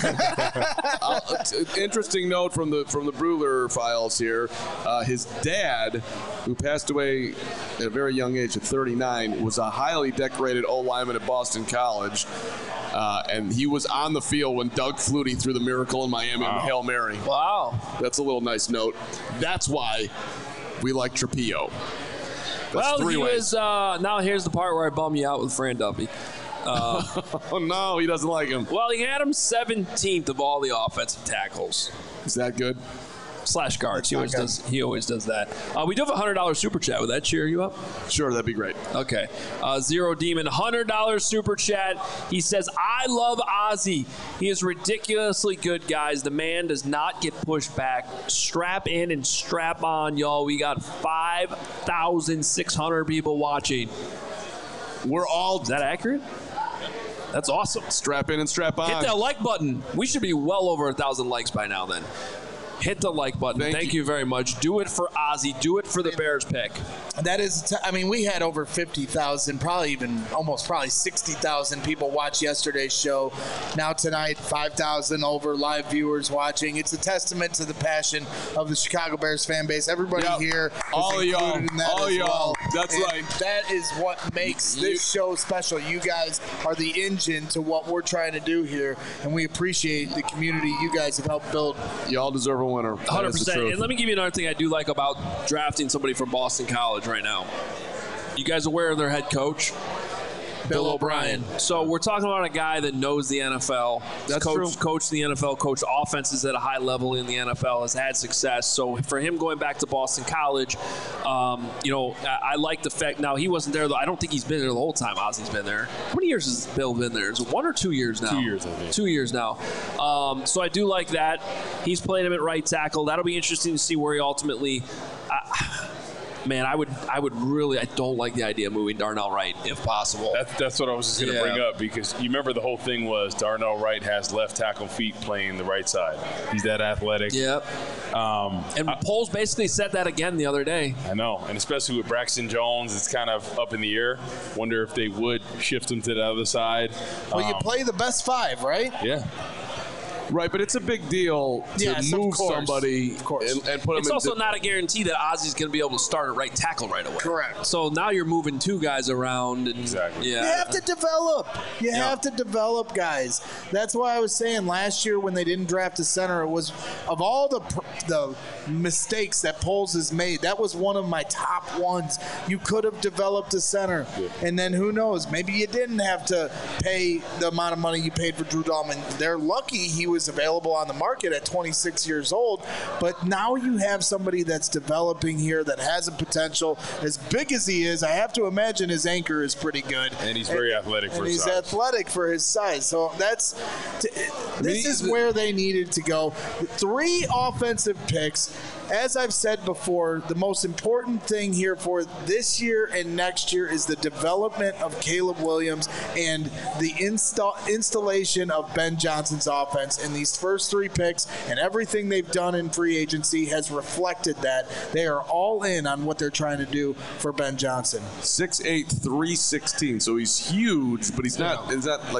Interesting note from the Breuler files here. His dad, who passed away at a very young age at 39, was a highly decorated O lineman at Boston College. And he was on the field when Doug Flutie threw the Miracle in Miami on Hail Mary. Wow. That's a little nice note. That's why we like Trapillo. Well, he was. Now here's the part where I bum you out with Fran Duffy. Oh, no, he doesn't like him. Well, he had him 17th of all the offensive tackles. Is that good? / guards. He always does that. We do have a $100 super chat. Would that cheer you up? Sure, that'd be great. Okay. Zero Demon, $100 super chat. He says, I love Ozzy. He is ridiculously good, guys. The man does not get pushed back. Strap in and strap on, y'all. We got 5,600 people watching. We're all... Is that accurate? That's awesome. Strap in and strap on. Hit that like button. We should be well over 1,000 likes by now then. Hit the like button. Thank you very much. Do it for Ozzy. Do it for the Bears pick. That is, we had over 50,000, probably 60,000 people watch yesterday's show. Now tonight, 5,000 over live viewers watching. It's a testament to the passion of the Chicago Bears fan base. Everybody here is all y'all. In that all as y'all. Well. That's and right. That is what makes this show special. You guys are the engine to what we're trying to do here, and we appreciate the community you guys have helped build. Y'all deserve a winner. 100%. And let me give you another thing I do like about drafting somebody from Boston College right now. You guys aware of their head coach? Bill O'Brien. So we're talking about a guy that knows the NFL. That's true. Coached the NFL, coached offenses at a high level in the NFL, has had success. So for him going back to Boston College, I like the fact. Now, he wasn't there, though. I don't think he's been there the whole time Ozzy's been there. How many years has Bill been there? Is it 1 or 2 years now? 2 years, I think. 2 years now. So I do like that. He's played him at right tackle. That'll be interesting to see where he ultimately man, I don't like the idea of moving Darnell Wright if possible. That's what I was just going to bring up, because you remember the whole thing was Darnell Wright has left tackle feet playing the right side. He's that athletic. Yep. And Poles basically said that again the other day. I know, and especially with Braxton Jones, it's kind of up in the air. Wonder if they would shift him to the other side. Well, you play the best 5, right? Yeah. Right, but it's a big deal to move somebody and put him It's also not a guarantee that Ozzy's going to be able to start at right tackle right away. Correct. So now you're moving 2 guys around. And, exactly. Yeah. You have to develop. You have to develop guys. That's why I was saying last year when they didn't draft a center, it was of all the mistakes that Poles has made, that was one of my top ones. You could have developed a center. Yeah. And then who knows, maybe you didn't have to pay the amount of money you paid for Drew Dalman. They're lucky he was available on the market at 26 years old, but now you have somebody that's developing here that has a potential as big as he is. I have to imagine his anchor is pretty good, and he's very athletic for his size. And he's athletic for his size. So this is where they needed to go. 3 offensive picks. As I've said before, the most important thing here for this year and next year is the development of Caleb Williams and the installation of Ben Johnson's offense. And these first 3 picks and everything they've done in free agency has reflected that. They are all in on what they're trying to do for Ben Johnson. 6'8", 316, so he's huge, but he's not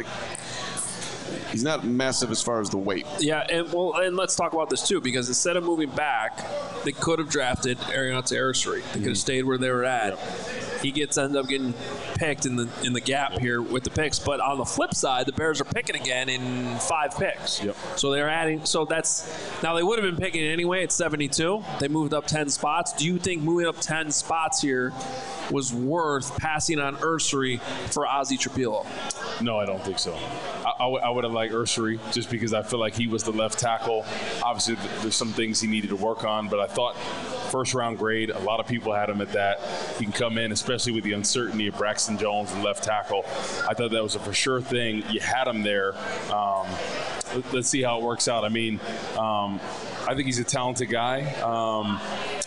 he's not massive as far as the weight. Yeah, and let's talk about this too, because instead of moving back, they could have drafted Arianna Arosari. They could have stayed where they were at. Yep. He ends up getting picked in the gap here with the picks. But on the flip side, the Bears are picking again in 5 picks. Yep. So they're adding. So now they would have been picking anyway at 72. They moved up 10 spots. Do you think moving up 10 spots here was worth passing on Arosari for Ozzy Trapilo? No, I don't think so. I would have liked Arosari just because I feel like he was the left tackle. Obviously, there's some things he needed to work on, but I thought first-round grade, a lot of people had him at that. He can come in, especially with the uncertainty of Braxton Jones and left tackle. I thought that was a for sure thing. You had him there. Let's see how it works out. I mean, I think he's a talented guy.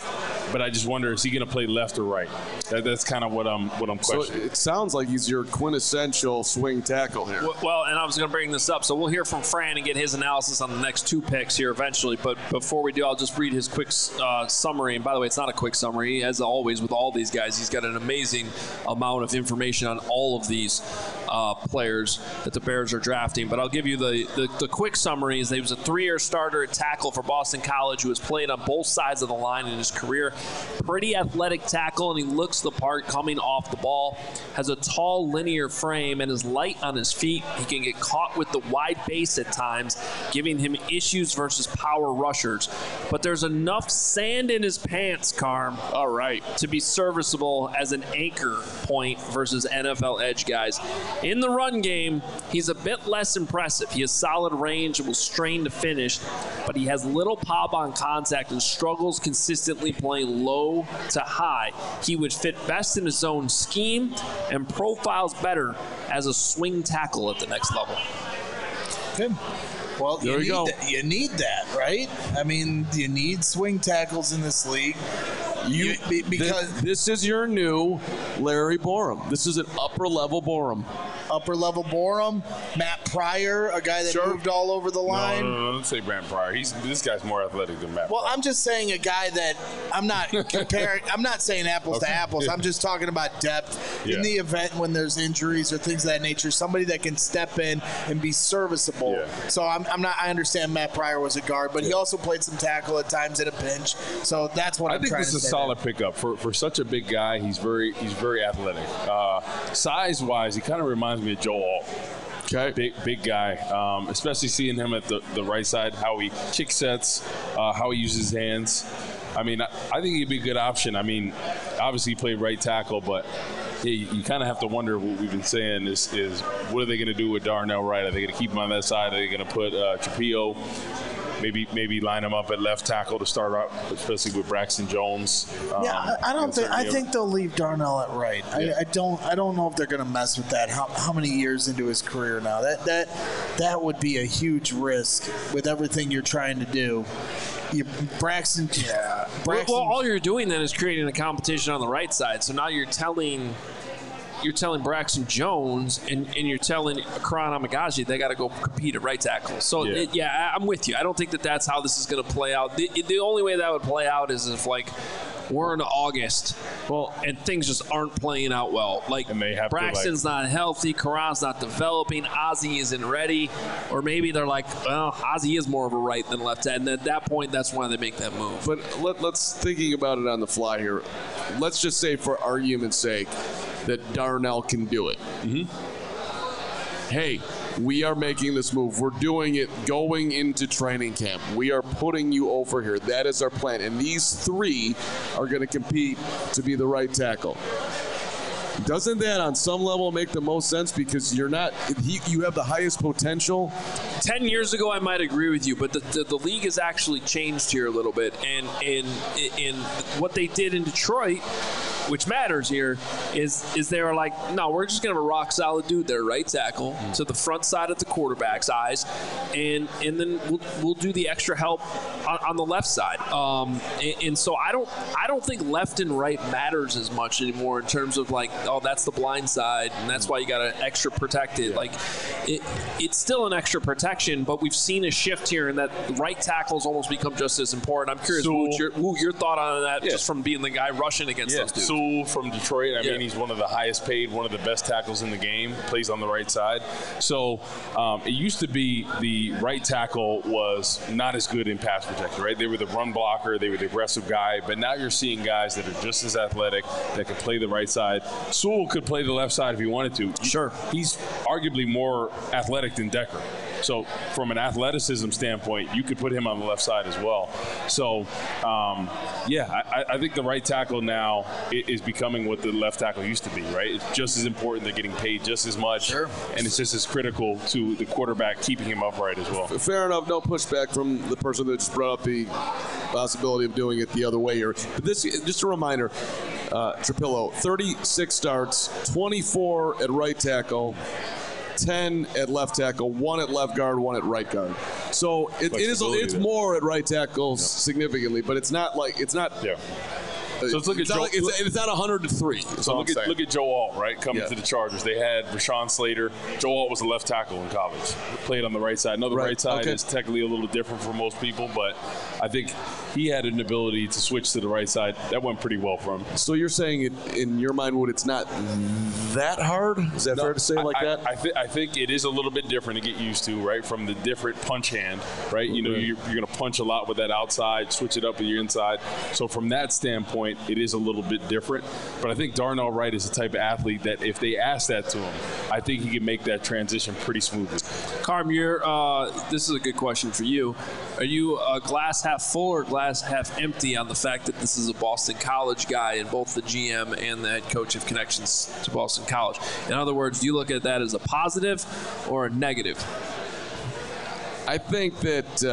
But I just wonder, is he going to play left or right? That's kind of what I'm questioning. So it sounds like he's your quintessential swing tackle here. Well, and I was going to bring this up, so we'll hear from Fran and get his analysis on the next 2 picks here eventually. But before we do, I'll just read his quick summary. And by the way, it's not a quick summary. As always with all these guys, he's got an amazing amount of information on all of these players that the Bears are drafting. But I'll give you the quick summary. Is he was a 3-year starter at tackle for Boston College who has played on both sides of the line in his career. Pretty athletic tackle, and he looks the part coming off the ball. Has a tall, linear frame and is light on his feet. He can get caught with the wide base at times, giving him issues versus power rushers. But there's enough sand in his pants, Carm, all right, to be serviceable as an anchor point versus NFL edge guys. In the run game, he's a bit less impressive. He has solid range and will strain to finish, but he has little pop on contact and struggles consistently playing low to high. He would fit best in his own scheme and profiles better as a swing tackle at the next level. Good. Well, you need that, right? I mean, you need swing tackles in this league. Because this is your new Larry Borom. This is an upper-level Borom. Upper-level Borom, Matt Pryor, a guy that moved all over the line. No, don't say Matt Pryor. This guy's more athletic than Matt Pryor. Well, I'm just saying a guy that I'm not comparing. I'm not saying apples to apples. I'm just talking about depth in the event when there's injuries or things of that nature. Somebody that can step in and be serviceable. Yeah. So I'm not. I understand Matt Pryor was a guard, but he also played some tackle at times at a pinch. So that's what I'm trying to say. I think this is a solid pickup for such a big guy. He's very athletic. Size-wise, he kind of reminds me of Joe Alt. Okay. Big guy, especially seeing him at the right side, how he kick sets, how he uses his hands. I mean, I think he'd be a good option. I mean, obviously he played right tackle, but you kind of have to wonder what we've been saying is what are they going to do with Darnell Wright? Are they going to keep him on that side? Are they going to put Trapio? Maybe line him up at left tackle to start out, especially with Braxton Jones. I think they'll leave Darnell at right. Yeah. I don't know if they're going to mess with that. How many years into his career now? That would be a huge risk with everything you're trying to do. Braxton. Well, all you're doing then is creating a competition on the right side. So now you're telling Braxton Jones and you're telling Karan Amagaji they got to go compete at right tackle. So, I'm with you. I don't think that's how this is going to play out. The only way that would play out is if, like, we're in August, and things just aren't playing out well. Like, Braxton's not healthy, Karan's not developing, Ozzie isn't ready, or maybe they're like, well, Ozzie is more of a right than left end. And at that point, that's why they make that move. But let's thinking about it on the fly here. Let's just say, for argument's sake, that Darnell can do it. Mm-hmm. Hey, we are making this move. We're doing it going into training camp. We are putting you over here. That is our plan. And these 3 are going to compete to be the right tackle. Doesn't that on some level make the most sense? Because you have the highest potential. 10 years ago, I might agree with you, but the league has actually changed here a little bit. And in what they did in Detroit, which matters here, is they were like, no, we're just going to have a rock-solid dude there, right tackle, to the front side of the quarterback's eyes, and then we'll do the extra help on the left side. And so I don't think left and right matters as much anymore in terms of, like, oh, that's the blind side, and that's why you got to extra protect it. Like, it's still an extra protection, but we've seen a shift here in that right tackles almost become just as important. I'm curious, your thought on that, just from being the guy rushing against those dudes. Sewell from Detroit, I mean, he's one of the highest paid, one of the best tackles in the game, plays on the right side. So it used to be the right tackle was not as good in pass protection, right? They were the run blocker, they were the aggressive guy, but now you're seeing guys that are just as athletic, that can play the right side. Sewell could play the left side if he wanted to. Sure. He's arguably more athletic than Decker. So from an athleticism standpoint, you could put him on the left side as well. So, I think the right tackle now is becoming what the left tackle used to be, right? It's just as important. They're getting paid just as much. Sure. And it's just as critical to the quarterback keeping him upright as well. Fair enough. No pushback from the person that just brought up the possibility of doing it the other way here. But this, just a reminder, Trapillo, 36 starts, 24 at right tackle, 10 at left tackle, 1 at left guard, 1 at right guard. So it's more at right tackle significantly, but it's not. So let's look at Joe. It's not 100-3. So look at Joe Alt, right, coming to the Chargers. They had Rashawn Slater. Joe Alt was a left tackle in college. Played on the right side. I know the right side is technically a little different for most people, but I think he had an ability to switch to the right side. That went pretty well for him. So you're saying, in your mind, it's not that hard? Is that fair to say that? I think it is a little bit different to get used to, right, from the different punch hand, right? You know, you're going to punch a lot with that outside, switch it up with your inside. So from that standpoint, it is a little bit different. But I think Darnell Wright is the type of athlete that if they ask that to him, I think he can make that transition pretty smoothly. Carm, this is a good question for you. Are you glass half full or glass half empty on the fact that this is a Boston College guy and both the GM and the head coach have connections to Boston College? In other words, do you look at that as a positive or a negative? I think that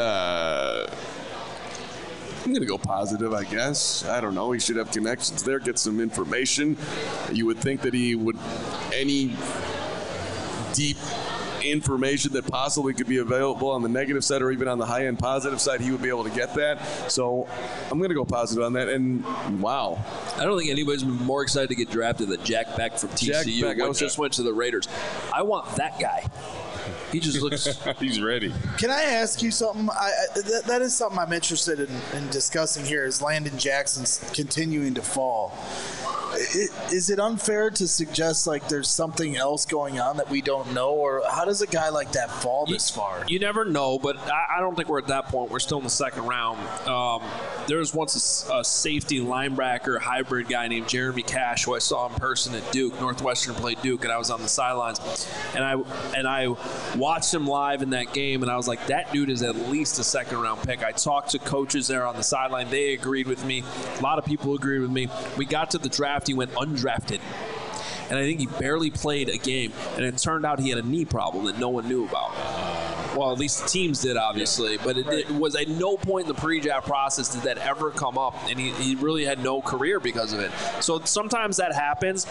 I'm going to go positive, I guess. I don't know. He should have connections there, get some information. You would think that he would, any deep information that possibly could be available on the negative side or even on the high-end positive side, he would be able to get that. So I'm going to go positive on that. And, wow. I don't think anybody's been more excited to get drafted than Jack Beck from TCU, which just went to the Raiders. I want that guy. He just looks he's ready. Can I ask you something? That is something I'm interested in discussing here is Landon Jackson's continuing to fall. Is it unfair to suggest like there's something else going on that we don't know, or how does a guy like that fall this far? You never know, but I don't think we're at that point. We're still in the second round. There was once a safety linebacker hybrid guy named Jeremy Cash who I saw in person at Duke. Northwestern played Duke, and I was on the sidelines, and I watched him live in that game, and I was like, that dude is at least a second round pick. I talked to coaches there on the sideline. They agreed with me. A lot of people agreed with me. We got to the draft. He went undrafted, and I think he barely played a game, and it turned out he had a knee problem that no one knew about. Well, at least the teams did, obviously, but it was at no point in the pre-draft process did that ever come up, and he really had no career because of it. So sometimes that happens.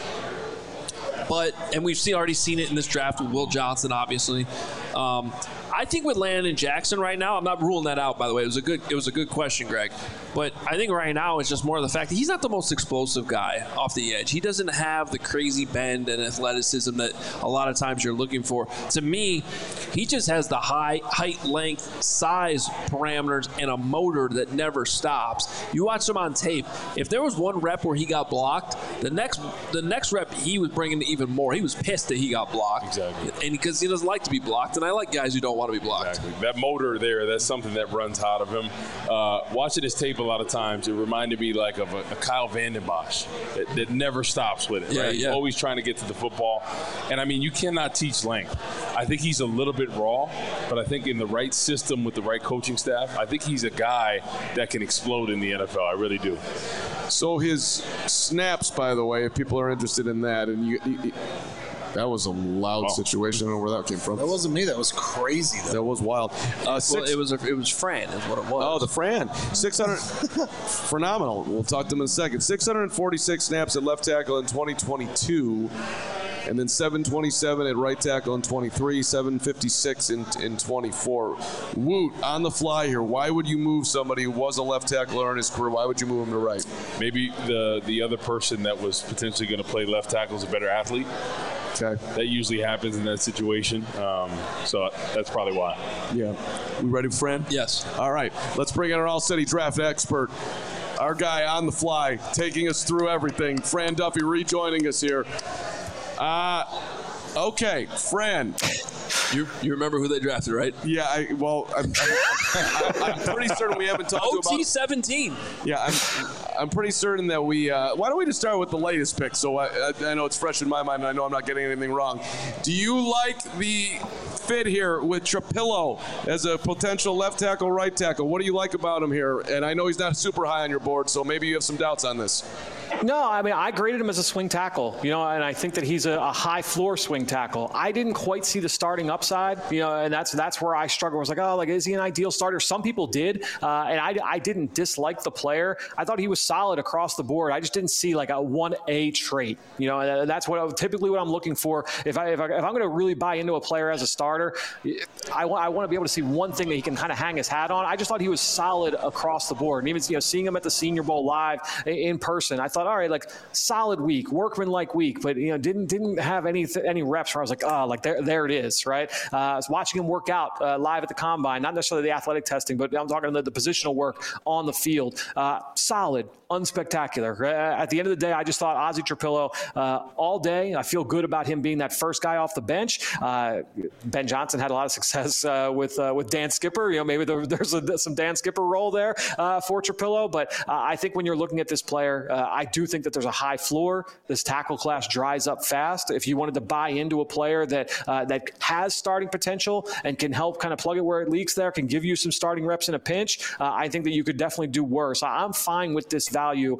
And we've already seen it in this draft with Will Johnson, obviously. I think with Landon Jackson right now, I'm not ruling that out, by the way. It was a good question, Greg. But I think right now it's just more of the fact that he's not the most explosive guy off the edge. He doesn't have the crazy bend and athleticism that a lot of times you're looking for. To me, he just has the height, length, size parameters, and a motor that never stops. You watch him on tape. If there was one rep where he got blocked, the next rep he was bringing even more. He was pissed that he got blocked. Exactly. And because he doesn't like to be blocked, and I like guys who don't want to be blocked. Exactly. That motor there, that's something that runs hot of him. Watching his tape a lot of times, it reminded me like of a Kyle Vanden Bosch that never stops with it. Yeah, right? yeah. He's always trying to get to the football. And, I mean, you cannot teach length. I think he's a little bit raw, but I think in the right system with the right coaching staff, I think he's a guy that can explode in the NFL. I really do. So his snaps, by the way, if people are interested in that, and that was a loud situation. I don't know where that came from. That wasn't me. That was crazy, though. That was wild. It was Fran is what it was. Oh, the Fran. 600. Phenomenal. We'll talk to him in a second. 646 snaps at left tackle in 2022. And then 727 at right tackle in 23, 756 in 24. Woot, on the fly here, why would you move somebody who was a left tackler in his career? Why would you move him to right? Maybe the other person that was potentially going to play left tackle is a better athlete. Okay. That usually happens in that situation. So that's probably why. Yeah. We ready, Fran? Yes. All right. Let's bring in our All-City draft expert. Our guy on the fly, taking us through everything. Fran Duffy rejoining us here. Okay, Fran. You remember who they drafted, right? Yeah, I'm pretty certain we haven't talked about OT-17. Yeah, I'm pretty certain that we. Why don't we just start with the latest pick? So I know it's fresh in my mind, and I know I'm not getting anything wrong. Do you like the fit here with Trapillo as a potential left tackle, right tackle? What do you like about him here? And I know he's not super high on your board, so maybe you have some doubts on this. No, I mean, I graded him as a swing tackle, and I think that he's a high floor swing tackle. I didn't quite see the starting upside, and that's where I struggle. I was like, is he an ideal starter? Some people did, and I didn't dislike the player. I thought he was solid across the board. I just didn't see like a 1A trait, and that's typically what I'm looking for. If I'm going to really buy into a player as a starter, I want to be able to see one thing that he can kind of hang his hat on. I just thought he was solid across the board, and even seeing him at the Senior Bowl live in person, I thought, all right, like solid week, workman-like week, but didn't have any reps where I was like, there it is, right? I was watching him work out live at the combine, not necessarily the athletic testing, but I'm talking the positional work on the field. Solid, unspectacular. At the end of the day, I just thought Ozzie Trapilo all day. I feel good about him being that first guy off the bench. Ben Johnson had a lot of success with Dan Skipper. Maybe there's some Dan Skipper role there for Trapilo, but I think when you're looking at this player, I do think that there's a high floor. This tackle class dries up fast. If you wanted to buy into a player that has starting potential and can help kind of plug it where it leaks there, can give you some starting reps in a pinch, I think that you could definitely do worse. I'm fine with this value.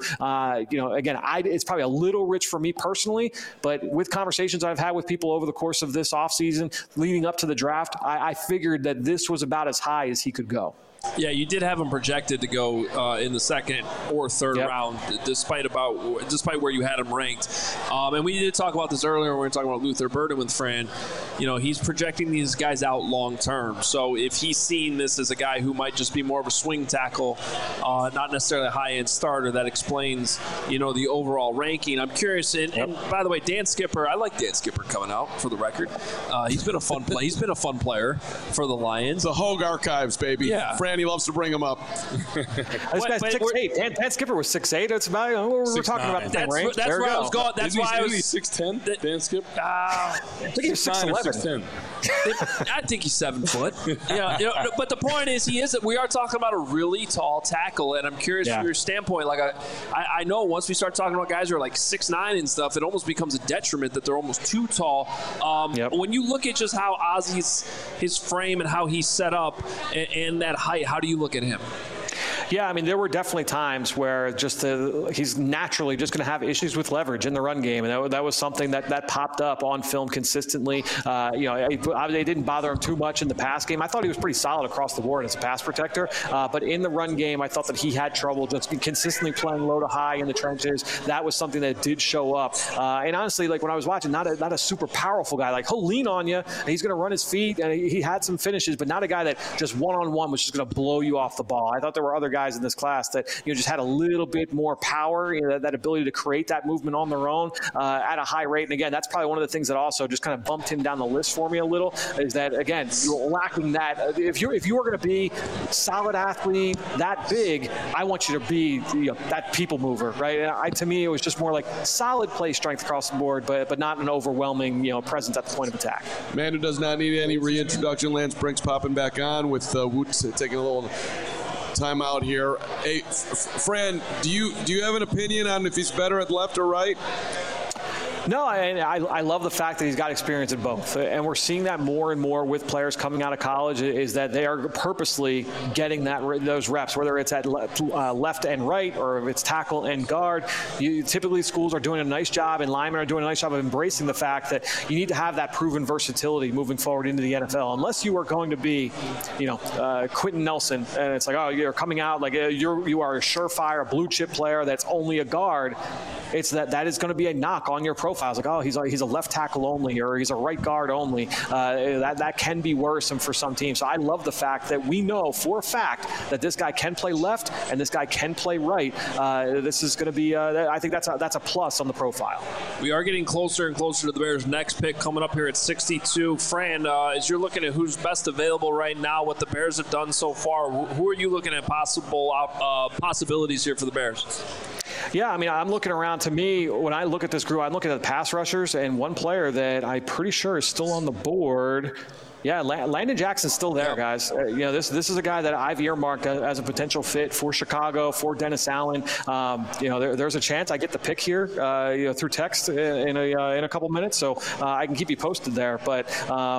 Again, it's probably a little rich for me personally, but with conversations I've had with people over the course of this offseason leading up to the draft, I figured that this was about as high as he could go. Yeah, you did have him projected to go in the second or third round, despite where you had him ranked. And we did talk about this earlier when we were talking about Luther Burden with Fran. He's projecting these guys out long term. So if he's seeing this as a guy who might just be more of a swing tackle, not necessarily a high-end starter, that explains, the overall ranking. I'm curious. And by the way, Dan Skipper, I like Dan Skipper coming out for the record. He's been a fun play. He's been a fun player for the Lions. The Hogue Archives, baby. Yeah. He loves to bring him up. This guy's 6'8". Dan Skipper was 6'8". That's about we're talking about the same range. That's where I was going. That's why I was 6'10". Dan Skipper. I think he's 6'11". I think he's 7 foot. But the point is, we are talking about a really tall tackle, and I'm curious from your standpoint. Like I know once we start talking about guys who are like 6'9" and stuff, it almost becomes a detriment that they're almost too tall. When you look at just how his frame and how he's set up and that height, how do you look at him? Yeah, I mean, there were definitely times where he's naturally just going to have issues with leverage in the run game, and that was something that popped up on film consistently. They didn't bother him too much in the pass game. I thought he was pretty solid across the board as a pass protector, but in the run game, I thought that he had trouble just consistently playing low to high in the trenches. That was something that did show up. And honestly, like when I was watching, not a super powerful guy. Like he'll lean on you, and he's going to run his feet, and he had some finishes, but not a guy that just one-on-one was just going to blow you off the ball. I thought there were other guys in this class that just had a little bit more power, that ability to create that movement on their own at a high rate. And again, that's probably one of the things that also just kind of bumped him down the list for me a little, is that again, you're lacking that. If you are going to be solid athlete that big, I want you to be that people mover, right? To me, it was just more like solid play strength across the board, but not an overwhelming presence at the point of attack. Man who does not need any reintroduction. Lance Brink's popping back on with Woot taking a little time out here. Hey, Fran, do you have an opinion on if he's better at left or right? No, I love the fact that he's got experience in both. And we're seeing that more and more with players coming out of college, is that they are purposely getting those reps, whether it's at left and right or if it's tackle and guard. Typically, schools are doing a nice job and linemen are doing a nice job of embracing the fact that you need to have that proven versatility moving forward into the NFL. Unless you are going to be, Quentin Nelson, and it's like, oh, you're coming out like you are a surefire blue chip player that's only a guard. It's that is going to be a knock on your profile. It's like, oh, he's a left tackle only, or he's a right guard only. That can be worrisome for some teams. So I love the fact that we know for a fact that this guy can play left and this guy can play right. This is going to be, I think that's a plus on the profile. We are getting closer and closer to the Bears' next pick coming up here at 62. Fran, as you're looking at who's best available right now, what the Bears have done so far, who are you looking at possibilities here for the Bears? Yeah, I mean, I'm looking around. To me, when I look at this group, I'm looking at the pass rushers, and one player that I'm pretty sure is still on the board. Yeah, Landon Jackson's still there, guys. This is a guy that I've earmarked as a potential fit for Chicago, for Dennis Allen. There's a chance I get the pick here, through text in a couple minutes, so I can keep you posted there. But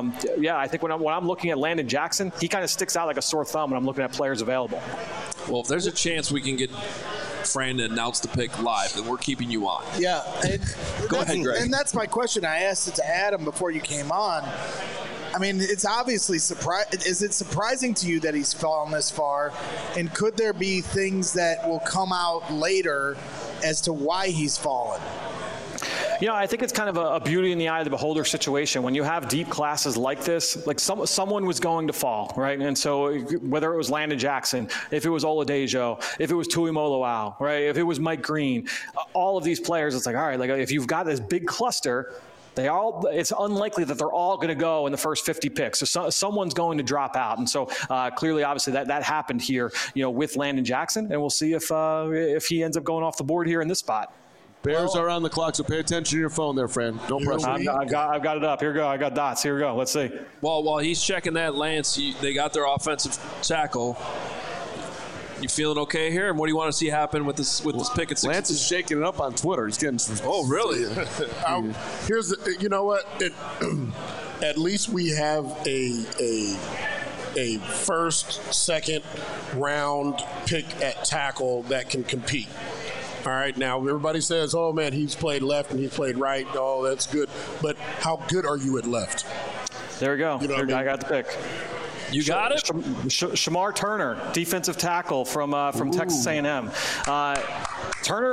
I think when I'm looking at Landon Jackson, he kind of sticks out like a sore thumb when I'm looking at players available. Well, if there's a chance we can get Fran to announce the pick live, and we're keeping you on. Yeah. Go ahead, Greg. And that's my question. I asked it to Adam before you came on. I mean, it's obviously is it surprising to you that he's fallen this far? And could there be things that will come out later as to why he's fallen? I think it's kind of a beauty in the eye of the beholder situation. When you have deep classes like this, like someone was going to fall, right? And so whether it was Landon Jackson, if it was Oladejo, if it was Tuimoloau, right? If it was Mike Green, all of these players, it's like, all right, like if you've got this big cluster, it's unlikely that they're all going to go in the first 50 picks. So someone's going to drop out. And so clearly, obviously, that happened here, with Landon Jackson. And we'll see if he ends up going off the board here in this spot. Bears are on the clock, so pay attention to your phone there, Fran. Don't press it. I've got it up. Here we go. I got dots. Here we go. Let's see. Well, while he's checking that, Lance, they got their offensive tackle. You feeling okay here? And what do you want to see happen with this pick at 6? Lance is shaking it up on Twitter. He's getting some. Oh, really? Here's the. You know what? At least we have a first, second round pick at tackle that can compete. All right, now everybody says, oh, man, he's played left and he's played right. Oh, that's good. But how good are you at left? There we go. I got the pick. You got it? Shamar Turner, defensive tackle from Texas A&M. Turner,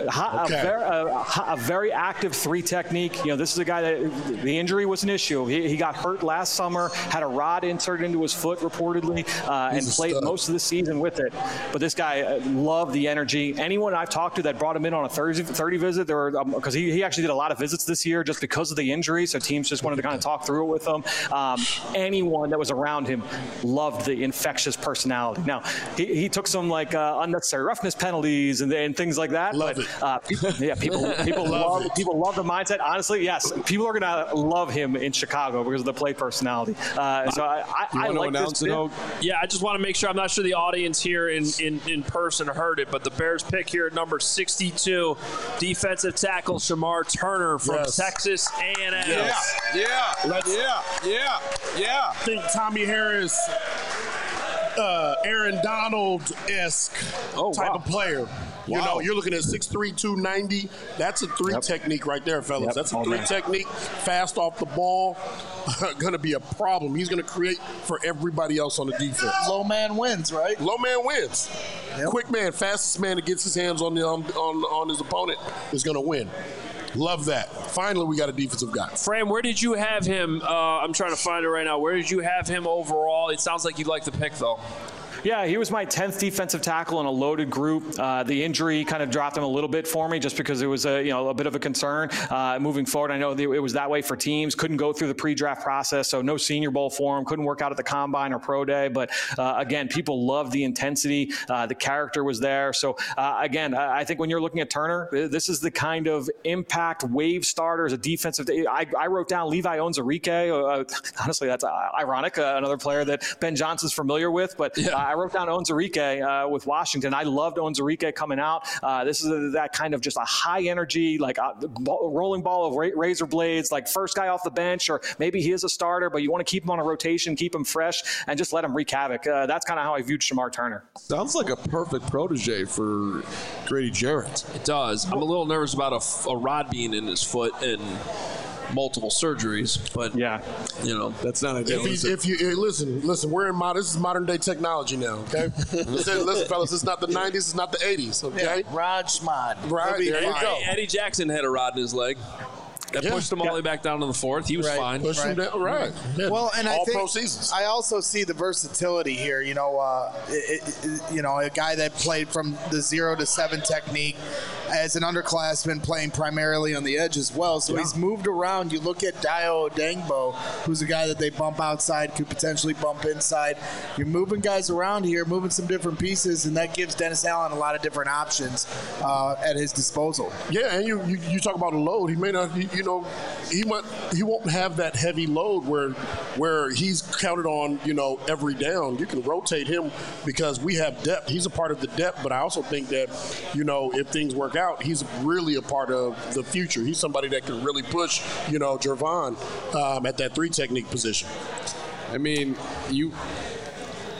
a very active 3 technique. This is a guy that the injury was an issue. He got hurt last summer, had a rod inserted into his foot reportedly, and played most of the season with it. But this guy loved the energy. Anyone I've talked to that brought him in on a 30 visit, because he actually did a lot of visits this year just because of the injury, so teams just wanted to kind of talk through it with him. Anyone that was around him loved the infectious personality. Now, he took some unnecessary roughness penalties and things like that. Love it. People love the mindset. Honestly, yes, people are gonna love him in Chicago because of the play personality. So I like this pick. Yeah, I just want to make sure. I'm not sure the audience here in person heard it, but the Bears pick here at number 62, defensive tackle Shamar Turner from Texas A&M. Yeah. I think Tommy Harris, Aaron Donald-esque type of player. You're looking at 6'3", 290. That's a 3 technique right there, fellas. Yep. That's a 3 technique. Fast off the ball. Going to be a problem. He's going to create for everybody else on the defense. Low man wins, right? Low man wins. Yep. Quick man, fastest man that gets his hands on his opponent is going to win. Love that. Finally, we got a defensive guy. Fran, where did you have him? I'm trying to find it right now. Where did you have him overall? It sounds like you like the pick, though. Yeah, he was my 10th defensive tackle in a loaded group. The injury kind of dropped him a little bit for me just because it was a bit of a concern moving forward. I know it was that way for teams. Couldn't go through the pre-draft process, so no Senior Bowl for him. Couldn't work out at the Combine or Pro Day. But, again, people loved the intensity. The character was there. So, again, I think when you're looking at Turner, this is the kind of impact wave starter as a defensive. I wrote down Levi Onwuzurike. Honestly, that's ironic. Another player that Ben Johnson's familiar with. But I wrote down Onwuzurike with Washington. I loved Onwuzurike coming out. This is that kind of just a high energy, like rolling ball of razor blades, like first guy off the bench, or maybe he is a starter, but you want to keep him on a rotation, keep him fresh, and just let him wreak havoc. That's kind of how I viewed Shamar Turner. Sounds like a perfect protege for Grady Jarrett. It does. I'm a little nervous about a rod being in his foot and multiple surgeries, but that's not ideal. If you listen, we're in this is modern day technology now. Okay, listen, fellas, it's not the '90s, it's not the '80s. Okay, Raj Schmad. Right, there you go. Eddie Jackson had a rod in his leg. That pushed him all the way back down to the 4th. He was fine. Pushed him down, right. Yeah. Well, and I think pro seasons. I also see the versatility here. A guy that played from the 0 to 7 technique as an underclassman, playing primarily on the edge as well. So he's moved around. You look at Dayo Odeyingbo, who's a guy that they bump outside, could potentially bump inside. You're moving guys around here, moving some different pieces, and that gives Dennis Allen a lot of different options at his disposal. Yeah, and you talk about a load. He may not. He won't have that heavy load where he's counted on, every down. You can rotate him because we have depth. He's a part of the depth, but I also think that, if things work out, he's really a part of the future. He's somebody that can really push, Jervon at that 3 technique position. I mean,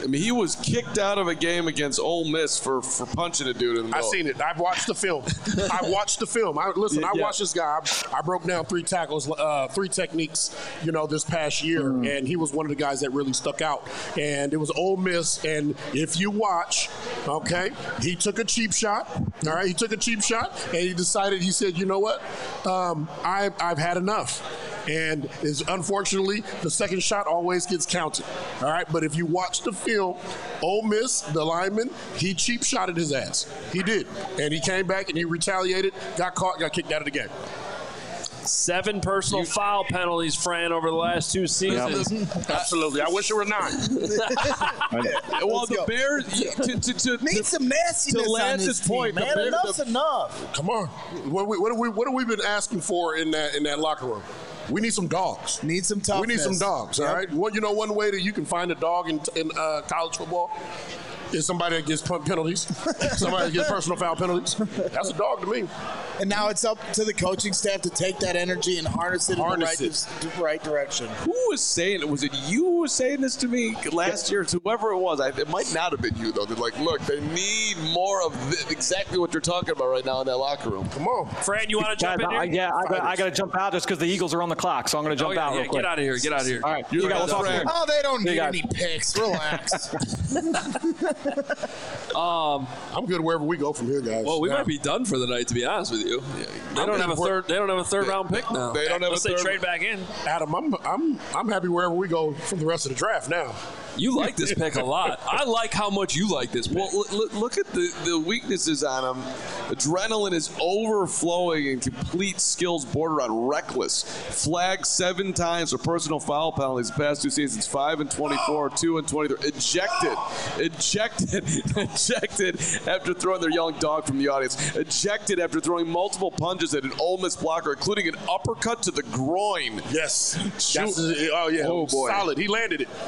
I mean, he was kicked out of a game against Ole Miss for punching a dude in the middle. I've seen it. I've watched the film. I watched this guy. I broke down 3 tackles, 3 techniques, this past year, and he was one of the guys that really stuck out. And it was Ole Miss, and if you watch, okay, he took a cheap shot. All right, he took a cheap shot, and he said, you know what, I've had enough. And unfortunately, the second shot always gets counted. All right, but if you watch the film, Ole Miss, the lineman, he cheap shotted his ass. He did, and he came back and he retaliated, got caught, got kicked out of the game. 7 personal foul penalties, Fran, over the last 2 seasons. Absolutely. I wish it were 9. Well, the Bears need some nastiness to on this team, point, man. Enough's enough. Come on. What have we been asking for in that locker room? We need some dogs. Need some toughness. We need some dogs, all right? Well, one way that you can find a dog in college football is somebody that gets penalties, somebody that gets personal foul penalties. That's a dog to me. And now it's up to the coaching staff to take that energy and harness it in the right direction. Who was saying it? Was it you who was saying this to me last year? Whoever it was. It might not have been you, though. They're like, look, they need more of exactly what you're talking about right now in that locker room. Come on. Fran, you want to jump in here? Yeah, I got to jump out just because the Eagles are on the clock, so I'm going to jump out real quick. Get out of here. Get out of here. All right. You guys talk here. Oh, they don't need any picks. Relax. I'm good wherever we go from here, guys. Well, we might be done for the night, to be honest with you. They don't have a third round pick now. They don't have Unless a third. they trade back in. Adam, I'm happy wherever we go from the rest of the draft now. You like this pick a lot. I like how much you like this pick. Well, look at the weaknesses on him. Adrenaline is overflowing and complete skills border on reckless. Flagged 7 times for personal foul penalties the past 2 seasons. 5 and 24, 2 and 23. Ejected after throwing their young dog from the audience. Ejected after throwing multiple punches at an Ole Miss blocker, including an uppercut to the groin. Yes. Oh, boy. Solid. He landed it.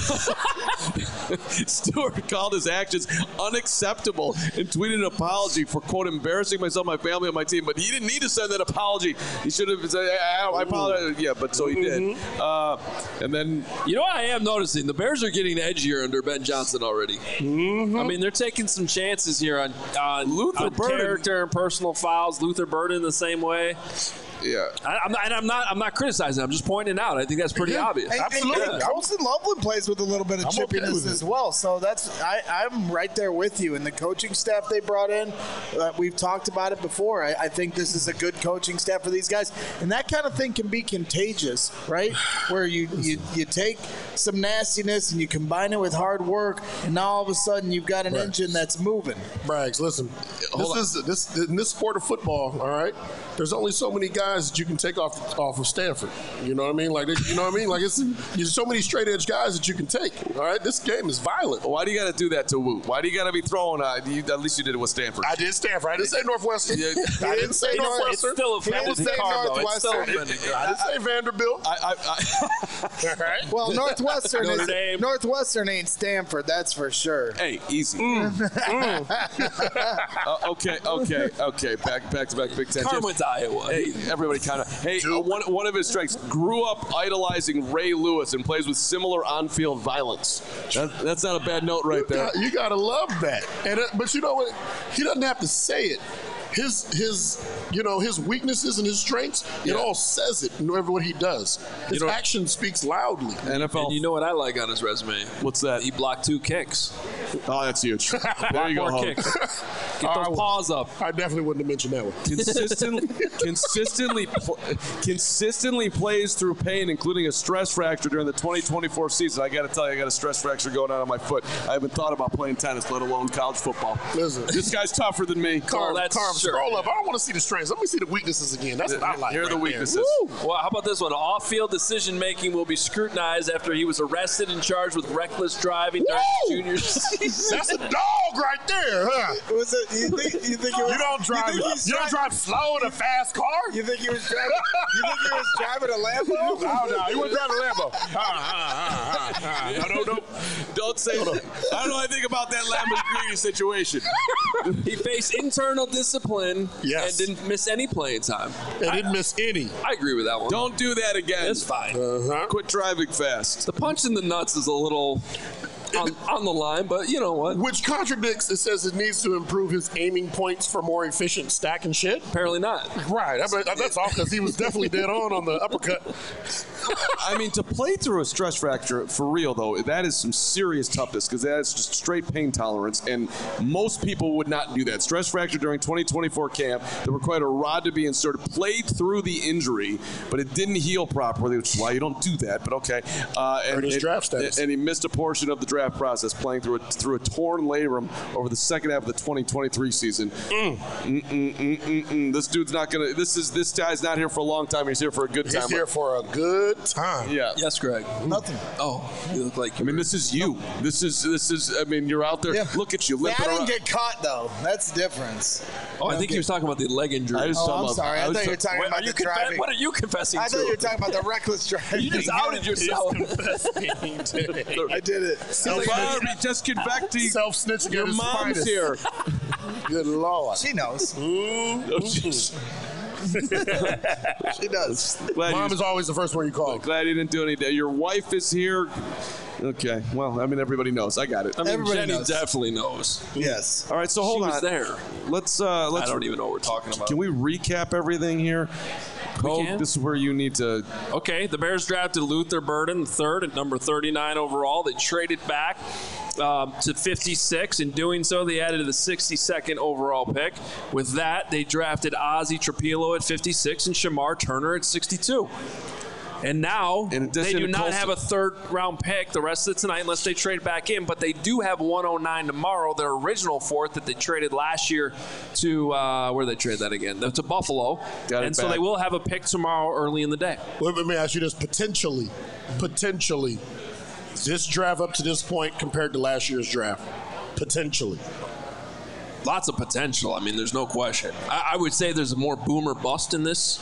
Stewart called his actions unacceptable and tweeted an apology for, quote, embarrassing myself, my family, and my team. But he didn't need to send that apology. He should have said, I apologize. Yeah, but so he did. And then... You know what I am noticing? The Bears are getting edgier under Ben Johnson already. I mean, they're taking some chances here on character and personal fouls. Luther Burden the same way. Yeah, I'm not criticizing. I'm just pointing it out. I think that's pretty obvious. Absolutely. And Colston Loveland plays with a little bit of chippiness as well. So I'm right there with you. And the coaching staff they brought in, we've talked about it before. I think this is a good coaching staff for these guys, and that kind of thing can be contagious, right? Where you take some nastiness and you combine it with hard work, and now all of a sudden you've got an engine that's moving. Braggs, listen. In this sport of football, all right, there's only so many guys that you can take off of Stanford. You know what I mean? Like, there's so many straight edge guys that you can take. All right, this game is violent. Why do you got to do that to Woot? Why do you got to be throwing? At least you did it with Stanford. I did Stanford. I didn't say Northwestern. I didn't say Northwestern. It's still a fantasy car, though. It's still I didn't say Vanderbilt. All right. Well, Northwestern ain't Stanford, that's for sure. Hey, easy. Okay. Back to back Big Ten. Carm went to Iowa. Hey, everybody kind of. Hey, one of his strengths, grew up idolizing Ray Lewis and plays with similar on-field violence. That's not a bad note right there. You gotta love that. But you know what? He doesn't have to say it. His weaknesses and his strengths, it all says it in what he does. His action speaks loudly. NFL. And you know what I like on his resume? What's that? He blocked 2 kicks. Oh, that's huge. There you go. More kicks. Get those paws up. I definitely wouldn't have mentioned that one. Consistently plays through pain, including a stress fracture during the 2024 season. I got to tell you, I got a stress fracture going on my foot. I haven't thought about playing tennis, let alone college football. Listen, this guy's tougher than me. Carm, scroll up. I don't want to see the strengths. Let me see the weaknesses again. That's what I like. Here are the weaknesses. Well, how about this one? Off-field decision-making will be scrutinized after he was arrested and charged with reckless driving during his junior season. That's a dog right there, huh? Was it? You think it was? You don't drive slow in a fast car. You think he was driving? You think he was driving a Lambo? Oh no, he wasn't driving a Lambo. No. Don't say that. I don't know anything about that Lamborghini situation. He faced internal discipline and didn't miss any playing time. And didn't miss any. I agree with that one. Don't do that again. It's fine. Quit driving fast. The punch in the nuts is a little on the line, but you know what? Which contradicts, it says it needs to improve his aiming points for more efficient stacking shit. Apparently not. Right. That's all because he was definitely dead on the uppercut. I mean, to play through a stress fracture, for real, though, that is some serious toughness because that is just straight pain tolerance, and most people would not do that. Stress fracture during 2024 camp that required a rod to be inserted, played through the injury, but it didn't heal properly, which is why you don't do that, but okay. And he missed a portion of the draft process playing through a torn labrum over the second half of the 2023 season. This dude's not going to – this guy's not here for a long time. He's here for a good time. He's here for a good time. Yeah. Yes, Greg. Nothing. Oh, you look like I mean, this is you. This is. I mean, you're out there. Yeah. Look at you. Yeah, I Limping didn't around. get caught though. That's the difference. Oh, I think he was talking about the leg injury. I'm sorry. I thought you were talking about the driving. What are you confessing I to? thought you were talking about the reckless driving. You just outed yourself. I did it. Barbie, just get back to Self-snitching. your mom's here. Good Lord. She knows. She does. Mom is always the first one you call. Glad you didn't do anything. Your wife is here. Okay. Well, I mean, everybody knows. I got it. I mean, Everybody Jenny knows. definitely knows. Yes. All right. So hold She on. was there. Let's. I don't even know what we're talking about. Can we recap everything here? Hope, can. this is where you need to. Okay, the Bears drafted Luther Burden, third at number 39 overall. They traded back to 56. In doing so, they added the 62nd overall pick. With that, they drafted Ozzie Trapilo at 56 and Shamar Turner at 62. And now they do not have a third-round pick the rest of tonight unless they trade back in, but they do have 109 tomorrow, their original fourth that they traded last year to where did they trade that again? To Buffalo. And so they will have a pick tomorrow early in the day. Well, let me ask you this. Potentially, this draft up to this point compared to last year's draft, potentially. Lots of potential. I mean, there's no question. I would say there's a more boomer bust in this.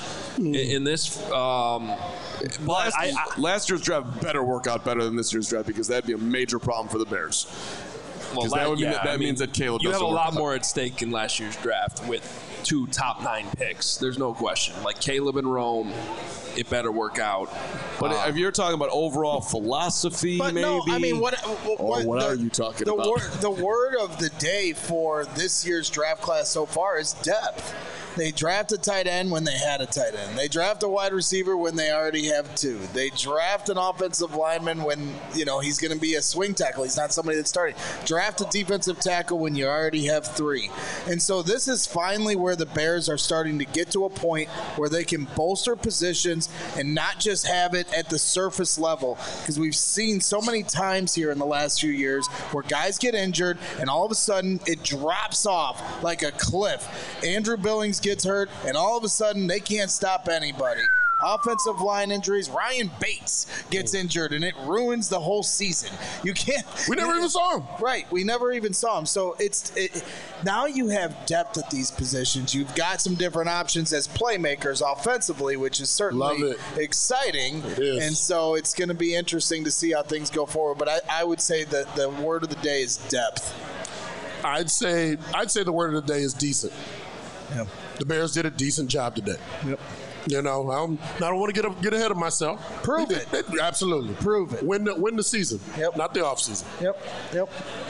But last year's draft better work out better than this year's draft because that'd be a major problem for the Bears. Well, that means that Caleb. You have a doesn't lot work out. more at stake in last year's draft with 2 top 9 picks. There's no question. Like Caleb and Rome, it better work out. But if you're talking about overall philosophy, But maybe. no, I mean, what are you talking about? The word of the day for this year's draft class so far is depth. They draft a tight end when they had a tight end. They draft a wide receiver when they already have 2. They draft an offensive lineman when, he's going to be a swing tackle. He's not somebody that's starting. Draft a defensive tackle when you already have 3. And so this is finally where the Bears are starting to get to a point where they can bolster positions and not just have it at the surface level. Because we've seen so many times here in the last few years where guys get injured and all of a sudden it drops off like a cliff. Andrew Billings gets hurt, and all of a sudden they can't stop anybody. Offensive line injuries. Ryan Bates gets injured, and it ruins the whole season. You can't. We never even saw him. Right. We never even saw him. So now you have depth at these positions. You've got some different options as playmakers offensively, which is certainly exciting. It is. And so it's going to be interesting to see how things go forward. But I would say that the word of the day is depth. I'd say the word of the day is decent. Yeah. The Bears did a decent job today. Yep. I don't want to get ahead of myself. Prove it. Absolutely. Prove it. Win the season. Yep. Not the off season. Yep.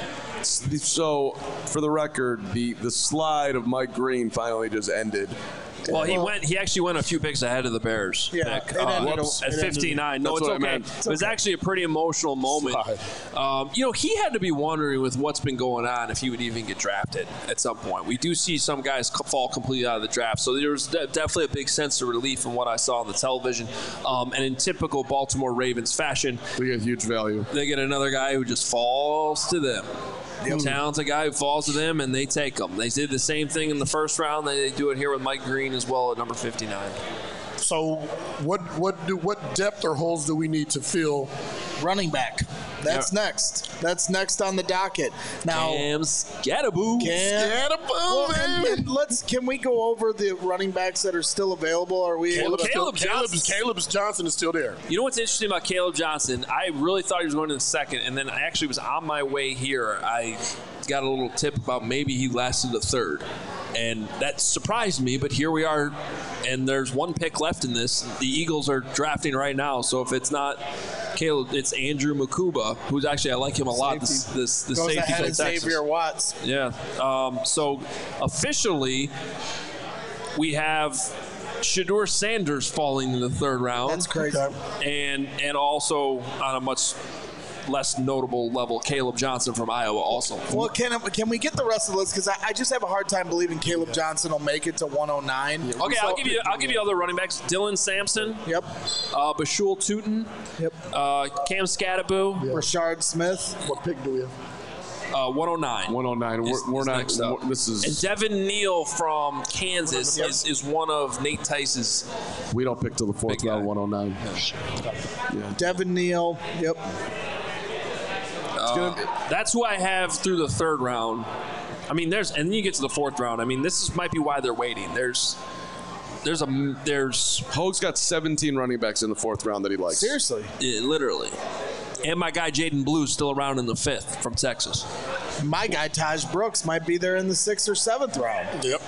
So, for the record, the slide of Mike Green finally just ended. Well, he actually went a few picks ahead of the Bears. Yeah, Pick, at 59. No, That's it's what I okay. meant. It was actually a pretty emotional moment. He had to be wondering with what's been going on if he would even get drafted at some point. We do see some guys fall completely out of the draft, so there was definitely a big sense of relief in what I saw on the television. And in typical Baltimore Ravens fashion, They get huge value. they get another guy who just falls to them. Talented guy who falls to them, and they take him. They did the same thing in the first round. They do it here with Mike Green as well at number 59. So what depth or holes do we need to fill? Running back. That's next. That's next on the docket. Now, Cam Scatterboo. Can we go over the running backs that are still available? Are we? Caleb Johnson is still there. You know what's interesting about Caleb Johnson? I really thought he was going in the second, and then I actually was on my way here. I got a little tip about maybe he lasted a third. And that surprised me, but here we are, and there's one pick left in this. The Eagles are drafting right now, so if it's not Caleb, it's Andrew Makuba, who's actually, I like him a lot. The Goes safety ahead from of Texas. Xavier Watts. Yeah. So officially, we have Shedeur Sanders falling in the third round. That's crazy. And also on a much less notable level, Caleb Johnson from Iowa also. Well, can we get the rest of the list? Because I just have a hard time believing Caleb Johnson will make it to 109. Okay, I'll give you other running backs. Dylan Sampson. Yep. Bashul Tootin. Yep. Cam Scattaboo. Rashard Smith. What pick do we have? 109. 109. We're not. next up. This is. And Devin Neal from Kansas is one of Nate Tice's. We don't pick till the fourth Big guy. round. 109. Yeah. Devin Neal. Yep. That's who I have through the third round. I mean, and then you get to the fourth round. I mean, might be why they're waiting. There's Hoge's got 17 running backs in the fourth round that he likes. Seriously. Literally. And my guy Jaden Blue still around in the fifth from Texas. My guy Taj Brooks might be there in the 6th or 7th round. Yep.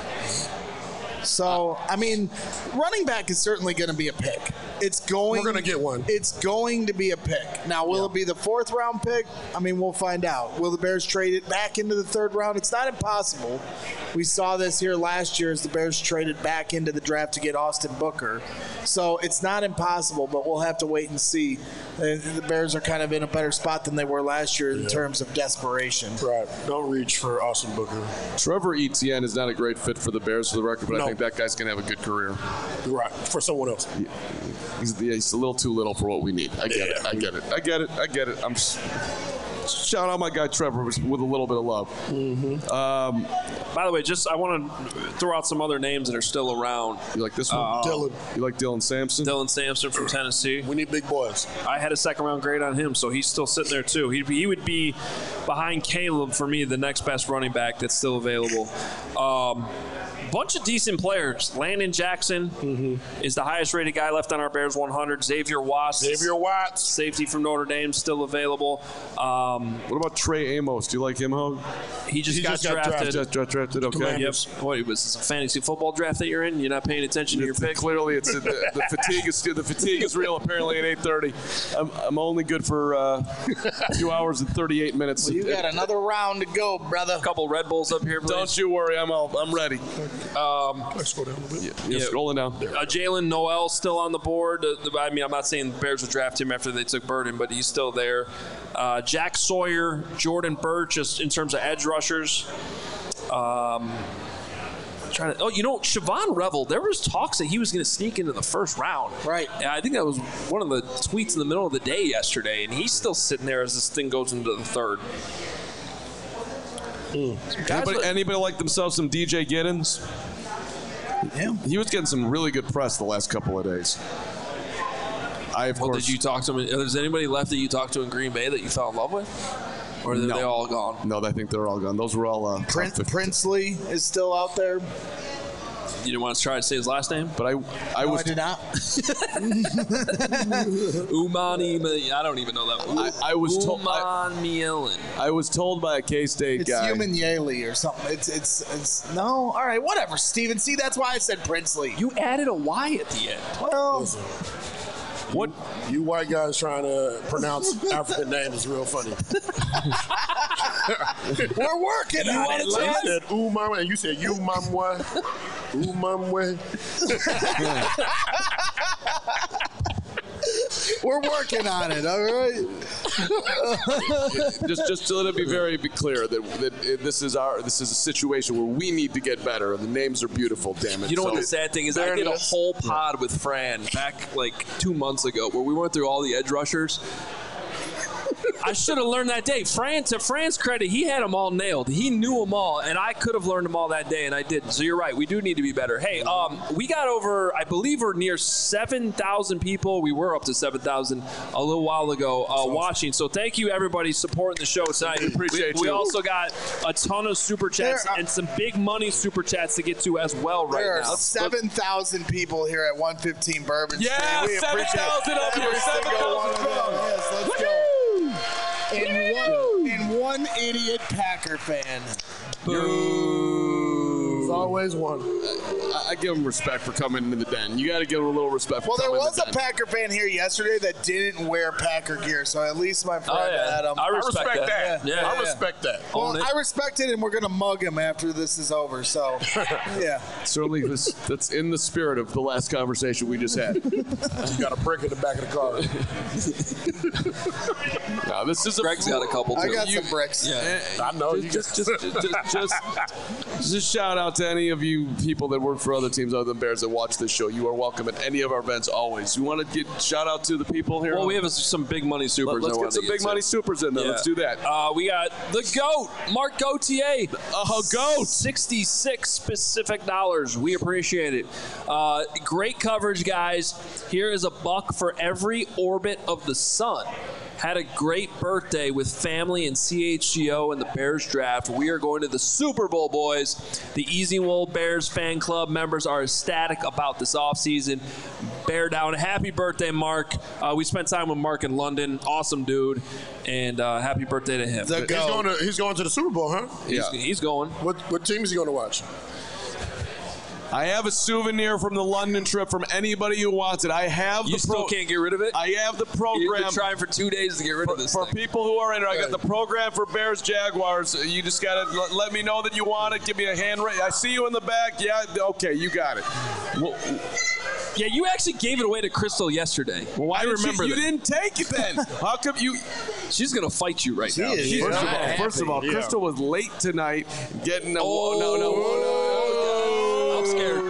So, I mean, running back is certainly going to be a pick. We're going to get one. It's going to be a pick. Now, will it be the 4th round pick? I mean, we'll find out. Will the Bears trade it back into the 3rd round? It's not impossible. We saw this here last year as the Bears traded back into the draft to get Austin Booker. So it's not impossible, but we'll have to wait and see. The Bears are kind of in a better spot than they were last year in terms of desperation. Right. Don't reach for Austin Booker. Trevor Etienne is not a great fit for the Bears, for the record, but I think that guy's going to have a good career. Right. For someone else. He's a little too little for what we need. I get it. I'm just shout out my guy Trevor with a little bit of love. Mm-hmm. By the way, I want to throw out some other names that are still around. You like this one? Dylan. You like Dylan Sampson? Dylan Sampson from Tennessee. We need big boys. I had a 2nd round grade on him, so he's still sitting there too. He would be behind Caleb for me, the next best running back that's still available. Bunch of decent players. Landon Jackson is the highest rated guy left on our Bears 100. Xavier Watts, safety from Notre Dame, still available. What about Trey Amos? Do you like him, Hogue? He just got drafted. Just drafted. Okay. Yep. What was this, a fantasy football draft that you're in? You're not paying attention to your pick. Clearly, it's the fatigue is real. Apparently, at 8:30, I'm only good for 2 hours and 38 minutes. Well, you got another round to go, brother. A couple Red Bulls up here, please. Don't you worry, I'm ready. Can I scroll down a little bit? Yeah, scrolling down. Jalen Noel still on the board. I mean, I'm not saying the Bears would draft him after they took Burden, but he's still there. Jack Sawyer, Jordan Birch, just in terms of edge rushers. Siobhan Revel, there was talks that he was going to sneak into the first round. Right. And I think that was one of the tweets in the middle of the day yesterday, and he's still sitting there as this thing goes into the third. Anybody like themselves some DJ Giddens? Yeah. He was getting some really good press the last couple of days. Did you talk to him? Is anybody left that you talked to in Green Bay that you fell in love with? Or are they all gone? No, I think they're all gone. Those were all... Princely is still out there. You didn't want to try to say his last name? But I did not. Umani, I don't even know that. I was told. Mielin. I was told by a K-State guy. It's Human Yaley or something. It's no. All right, whatever, Steven. See, that's why I said Princely. You added a Y at the end. Well, what you white guys trying to pronounce African names is real funny. We're working on it. You said Umamwe, and you said Umamwe. Umamwe. We're working on it, all right? just to let it be very clear that this is a situation where we need to get better. The names are beautiful, damn it. You know what the sad thing is? I did a whole pod with Fran back like 2 months ago where we went through all the edge rushers. I should have learned that day. To Fran's credit, he had them all nailed. He knew them all, and I could have learned them all that day, and I didn't. So you're right. We do need to be better. Hey, we got over, I believe we're near 7,000 people. We were up to 7,000 a little while ago watching. So thank you, everybody, supporting the show tonight. We appreciate you. We also got a ton of super chats and some big money super chats to get to as well right now. There are 7,000 people here at 115 Bourbon Street. Yeah, 7,000 up here. 7,000 Yes, let's go. And one idiot Packer fan. There's always one. I give him respect for coming into the den. You got to give him a little respect. Well, for there coming was in a the den. Packer fan here yesterday that didn't wear Packer gear, so at least my friend Adam. I respect that. Yeah. I respect that. Well, I respect it, and we're gonna mug him after this is over. So, yeah. Certainly, that's in the spirit of the last conversation we just had. You got a brick in the back of the car. No, this is Greg's got a couple too. I got some bricks. Yeah. I know. Just shout out to any of you people that work for other teams other than Bears that watch this show. You are welcome at any of our events always. You want to get shout out to the people here? Well, we have some big money supers. Let's get some big money supers in there. Yeah. Let's do that. We got the GOAT, Mark Gauthier. GOAT. $66 specific dollars. We appreciate it. Great coverage, guys. Here is $1 for every orbit of the sun. Had a great birthday with family and CHGO and the Bears draft. We are going to the Super Bowl, boys. The Easy Wool Bears fan club members are ecstatic about this offseason. Bear down. Happy birthday, Mark. We spent time with Mark in London. Awesome dude. And happy birthday to him. He's going to the Super Bowl, huh? He's going. What team is he going to watch? I have a souvenir from the London trip from anybody who wants it. I have You still can't get rid of it? I have the program. You've been trying for 2 days to get rid of this For thing. people who are in it, I got the program for Bears Jaguars. You just got to let me know that you want it. Give me a hand raise. I see you in the back. Yeah, okay, you got it. Well, yeah, you actually gave it away to Crystal yesterday. well, why I remember you that. didn't take it then? How come you? She's going to fight you right now. is. First of all, Crystal was late tonight getting a no. I'm scared.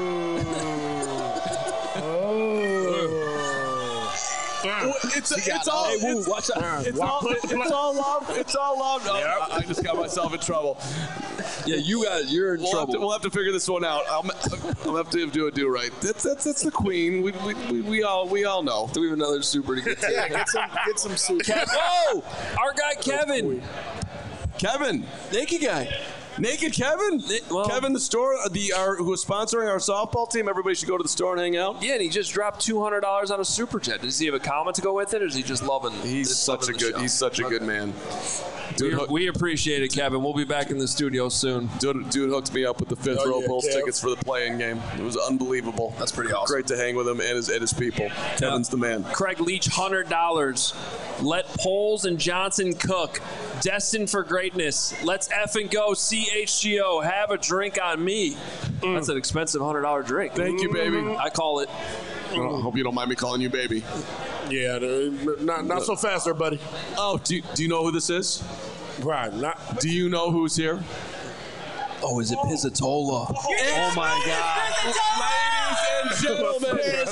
It's all. Hey, Woo, watch out. It's all love. It's all love. No, I just got myself in trouble. Yeah, you're in trouble. We'll have to figure this one out. I'll have to do a do right. That's the queen. We all know. Do we have another super to get to? Yeah, get some soup. Oh, our guy Kevin. Kevin, Naked guy. Naked Kevin. Well- Kevin, the store, who is sponsoring our softball team. Everybody should go to the store and hang out. Yeah, and he just dropped $200 on a super chat. Does he have a comment to go with it, or is he just loving? He's such a good man. We appreciate it, Kevin. We'll be back in the studio soon. Dude hooked me up with the fifth row Bulls Kev. tickets for the playing game. It was unbelievable. That's pretty awesome. Great to hang with him and his people. Kevin's the man. Craig Leach, $100. Let Poles and Johnson cook. Destined for greatness. Let's effing go. CHGO. Have a drink on me. That's an expensive $100 drink. Thank you, baby. I call it. I hope you don't mind me calling you baby. Yeah, not so fast there, buddy. Oh, do you know who this is? Right, not. Do you know who's here? Oh, is it Pizzatola? Oh my God! Ladies and gentlemen,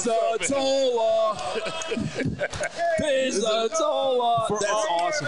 Pizzatola. That's awesome.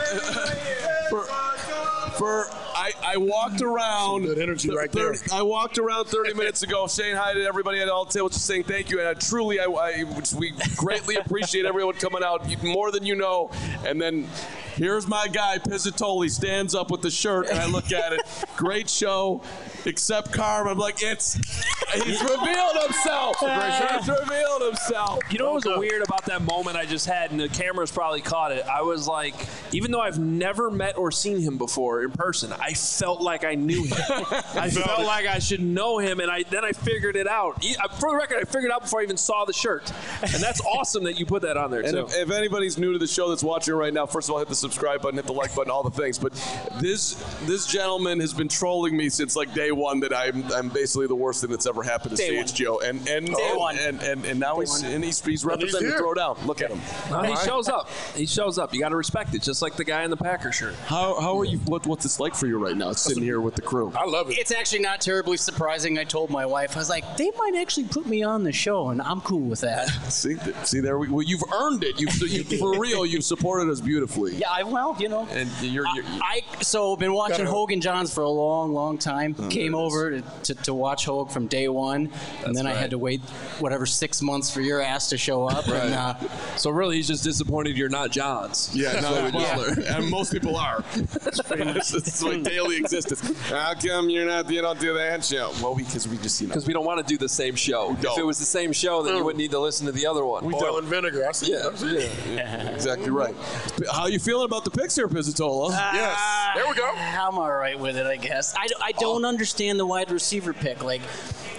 I walked around. Good energy right there. I walked around 30 minutes ago saying hi to everybody at all tables, just saying thank you. And we greatly appreciate everyone coming out more than you know. And then here's my guy, Pizzatoli, stands up with the shirt, and I look at it. Great show, except Carm. I'm like, he's revealed himself. He's revealed himself. You know what was weird about that moment I just had, and the cameras probably caught it? I was like, even though I've never met or seen him before in person, I felt like I knew him. I felt like I should know him, and then I figured it out. For the record, I figured it out before I even saw the shirt. And that's awesome that you put that on there, And too. if anybody's new to the show that's watching right now, first of all, hit the subscribe button, hit the like button, all the things. But this gentleman has been trolling me since like day one that I'm basically the worst thing that's ever happened to CHGO. And now he's representing the Throwdown. Look at him. He shows up. He shows up. You got to respect it, just like the guy in the Packer shirt. How are you? What's this like for you right now, sitting here with the crew? I love it. It's actually not terribly surprising. I told my wife, I was like, they might actually put me on the show, and I'm cool with that. See there. Well, you've earned it. For real. You've supported us beautifully. Yeah, And you're so been watching Hogan Johns for a long, long time. Came over to watch Hogue from day one, and then I had to wait 6 months for your ass to show up. Right. And, so really, he's just disappointed you're not Johns. Yeah, and most people are. It's like daily existence. How come you don't do that show? Well, because we just Because we don't want to do the same show. If it was the same show, then you wouldn't need to listen to the other one. Oil and vinegar. I see. Yeah. Exactly right. How you feeling about the picks here, Pizzatola? Yes. There we go. I'm all right with it, I guess. I don't understand the wide receiver pick. Like,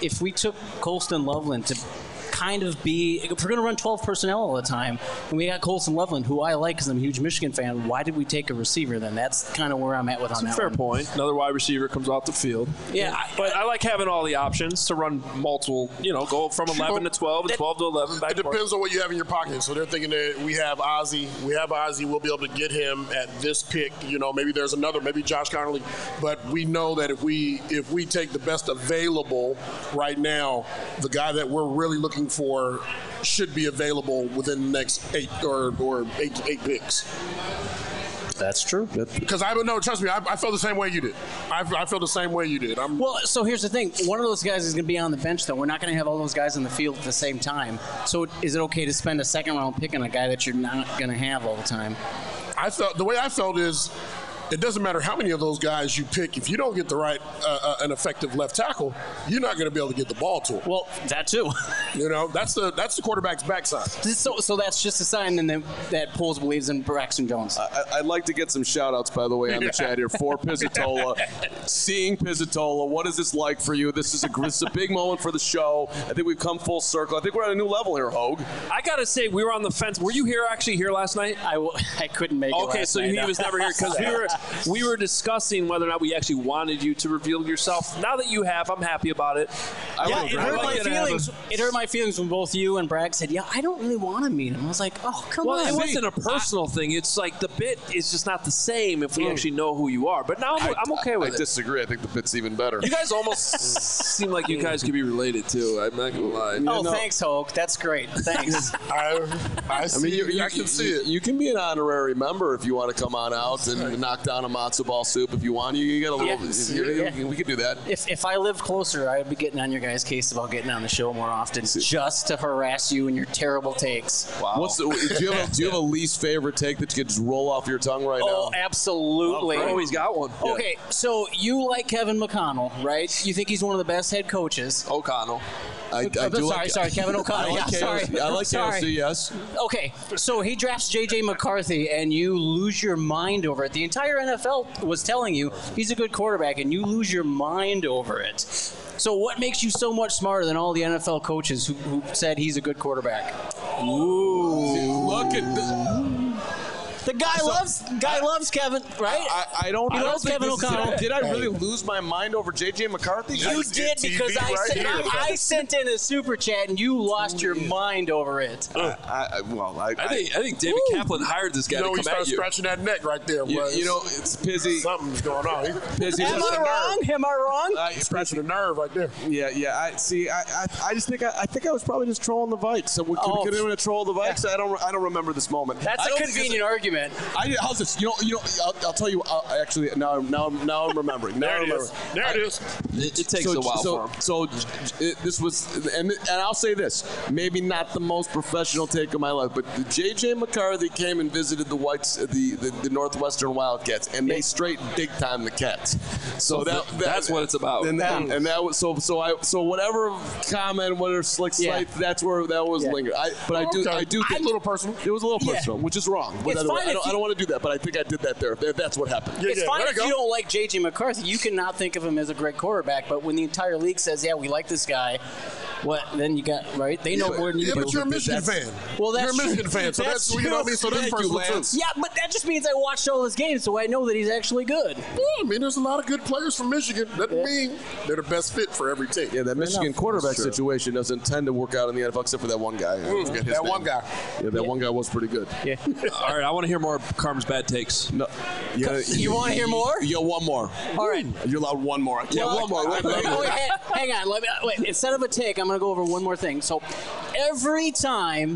if we took Colston Loveland to kind of be, if we're going to run 12 personnel all the time, and we got Colston Loveland, who I like because I'm a huge Michigan fan, why did we take a receiver then? That's kind of where I'm at with on that fair one. point. Another wide receiver comes off the field. Yeah. But I like having all the options to run multiple, go from 11 to 12 and 12 to 11. Back it depends on what you have in your pocket. So they're thinking that we have Ozzie. We'll be able to get him at this pick. Maybe there's another, maybe Josh Connolly. But we know that if we take the best available right now, the guy that we're really looking for should be available within the next 8 picks. That's true. Because trust me, I feel the same way you did. I feel the same way you did. Well, so here's the thing. One of those guys is going to be on the bench, though. We're not going to have all those guys on the field at the same time. So is it okay to spend a second-round pick on a guy that you're not going to have all the time? The way I felt is, it doesn't matter how many of those guys you pick. If you don't get the right, an effective left tackle, you're not going to be able to get the ball to him. Well, that too. That's the quarterback's backside. So that's just a sign then that Poles believes in Braxton Jones. I'd like to get some shout-outs, by the way, on the chat here for Pizzatola. Seeing Pizzatola, what is this like for you? This is a big moment for the show. I think we've come full circle. I think we're at a new level here, Hogue. I got to say, we were on the fence. Were you actually here last night? I couldn't make it last night. Okay, so he was never here because we were discussing whether or not we actually wanted you to reveal yourself. Now that you have, I'm happy about it. It hurt my feelings. It hurt my feelings when both you and Bragg said, "Yeah, I don't really want to meet him." I was like, "Oh, come on." Well, it wasn't a personal thing. It's like the bit is just not the same if we actually know who you are. But now I'm okay with it. I disagree. I think the bit's even better. You guys almost seem like you guys could be related too. I'm not gonna lie. Thanks, Hogue. That's great. Thanks. I can see it. You can be an honorary member if you want to come on out and knock down a matzo ball soup if you want. You get a little. We could do that. If I lived closer, I'd be getting on your guys' case about getting on the show more often, just to harass you and your terrible takes. Wow. Do you have a least favorite take that you could just roll off your tongue right now? Oh, absolutely. Oh, he's got one. Okay, so you like Kevin McConnell, right? You think he's one of the best head coaches. O'Connell. Sorry, Kevin O'Connell. I like KOC, yes. Okay, so he drafts J.J. McCarthy, and you lose your mind over it. The entire NFL was telling you he's a good quarterback, and you lose your mind over it. So what makes you so much smarter than all the NFL coaches who said he's a good quarterback? Ooh. Look at this. The guy loves Kevin, right? I don't loves Kevin O'Connell. Did I really lose my mind over J.J. McCarthy? You did, because I sent in a super chat and you lost your mind over it. I think David Kaplan hired this guy to come at you. You start scratching that neck right there. It's Pizzy. Something's going on. Am I wrong? He's scratching a nerve right there. Yeah. I just think I was probably just trolling the Vikes. So we could have trolled the Vikes. I don't remember this moment. That's a convenient argument. How's this? I'll tell you. Actually, now I'm remembering. There it is. It takes a while for him. So this was, and I'll say this: maybe not the most professional take of my life, but J.J. McCarthy came and visited the Whites, the Northwestern Wildcats, and they straight big time the Cats. So that's what it's about. And that was so whatever comment, whatever slick slight, that's where that was lingered. I do think a little personal. It was a little personal, which is wrong. I don't want to do that, but I think I did that there. That's what happened. It's fine if you don't like J.J. McCarthy. You cannot think of him as a great quarterback, but when the entire league says, yeah, we like this guy, then you got, right? They know more than you do. But you're a Michigan fan. Well, you're a Michigan fan, so that's, you know what I mean? So that's personal too. Yeah, but that just means I watched all his games, so I know that he's actually good. Yeah, there's a lot of good players from Michigan. That mean they're the best fit for every team. Yeah, that Michigan quarterback situation doesn't tend to work out in the NFL except for that one guy. That one guy. Yeah, that one guy was pretty good. Yeah. All right, I want to hear more of Carm's bad takes. No. You want to hear more? You got one more. All right. You're allowed one more. One more. Hang on. Instead of a take, I'm going to go over one more thing. So every time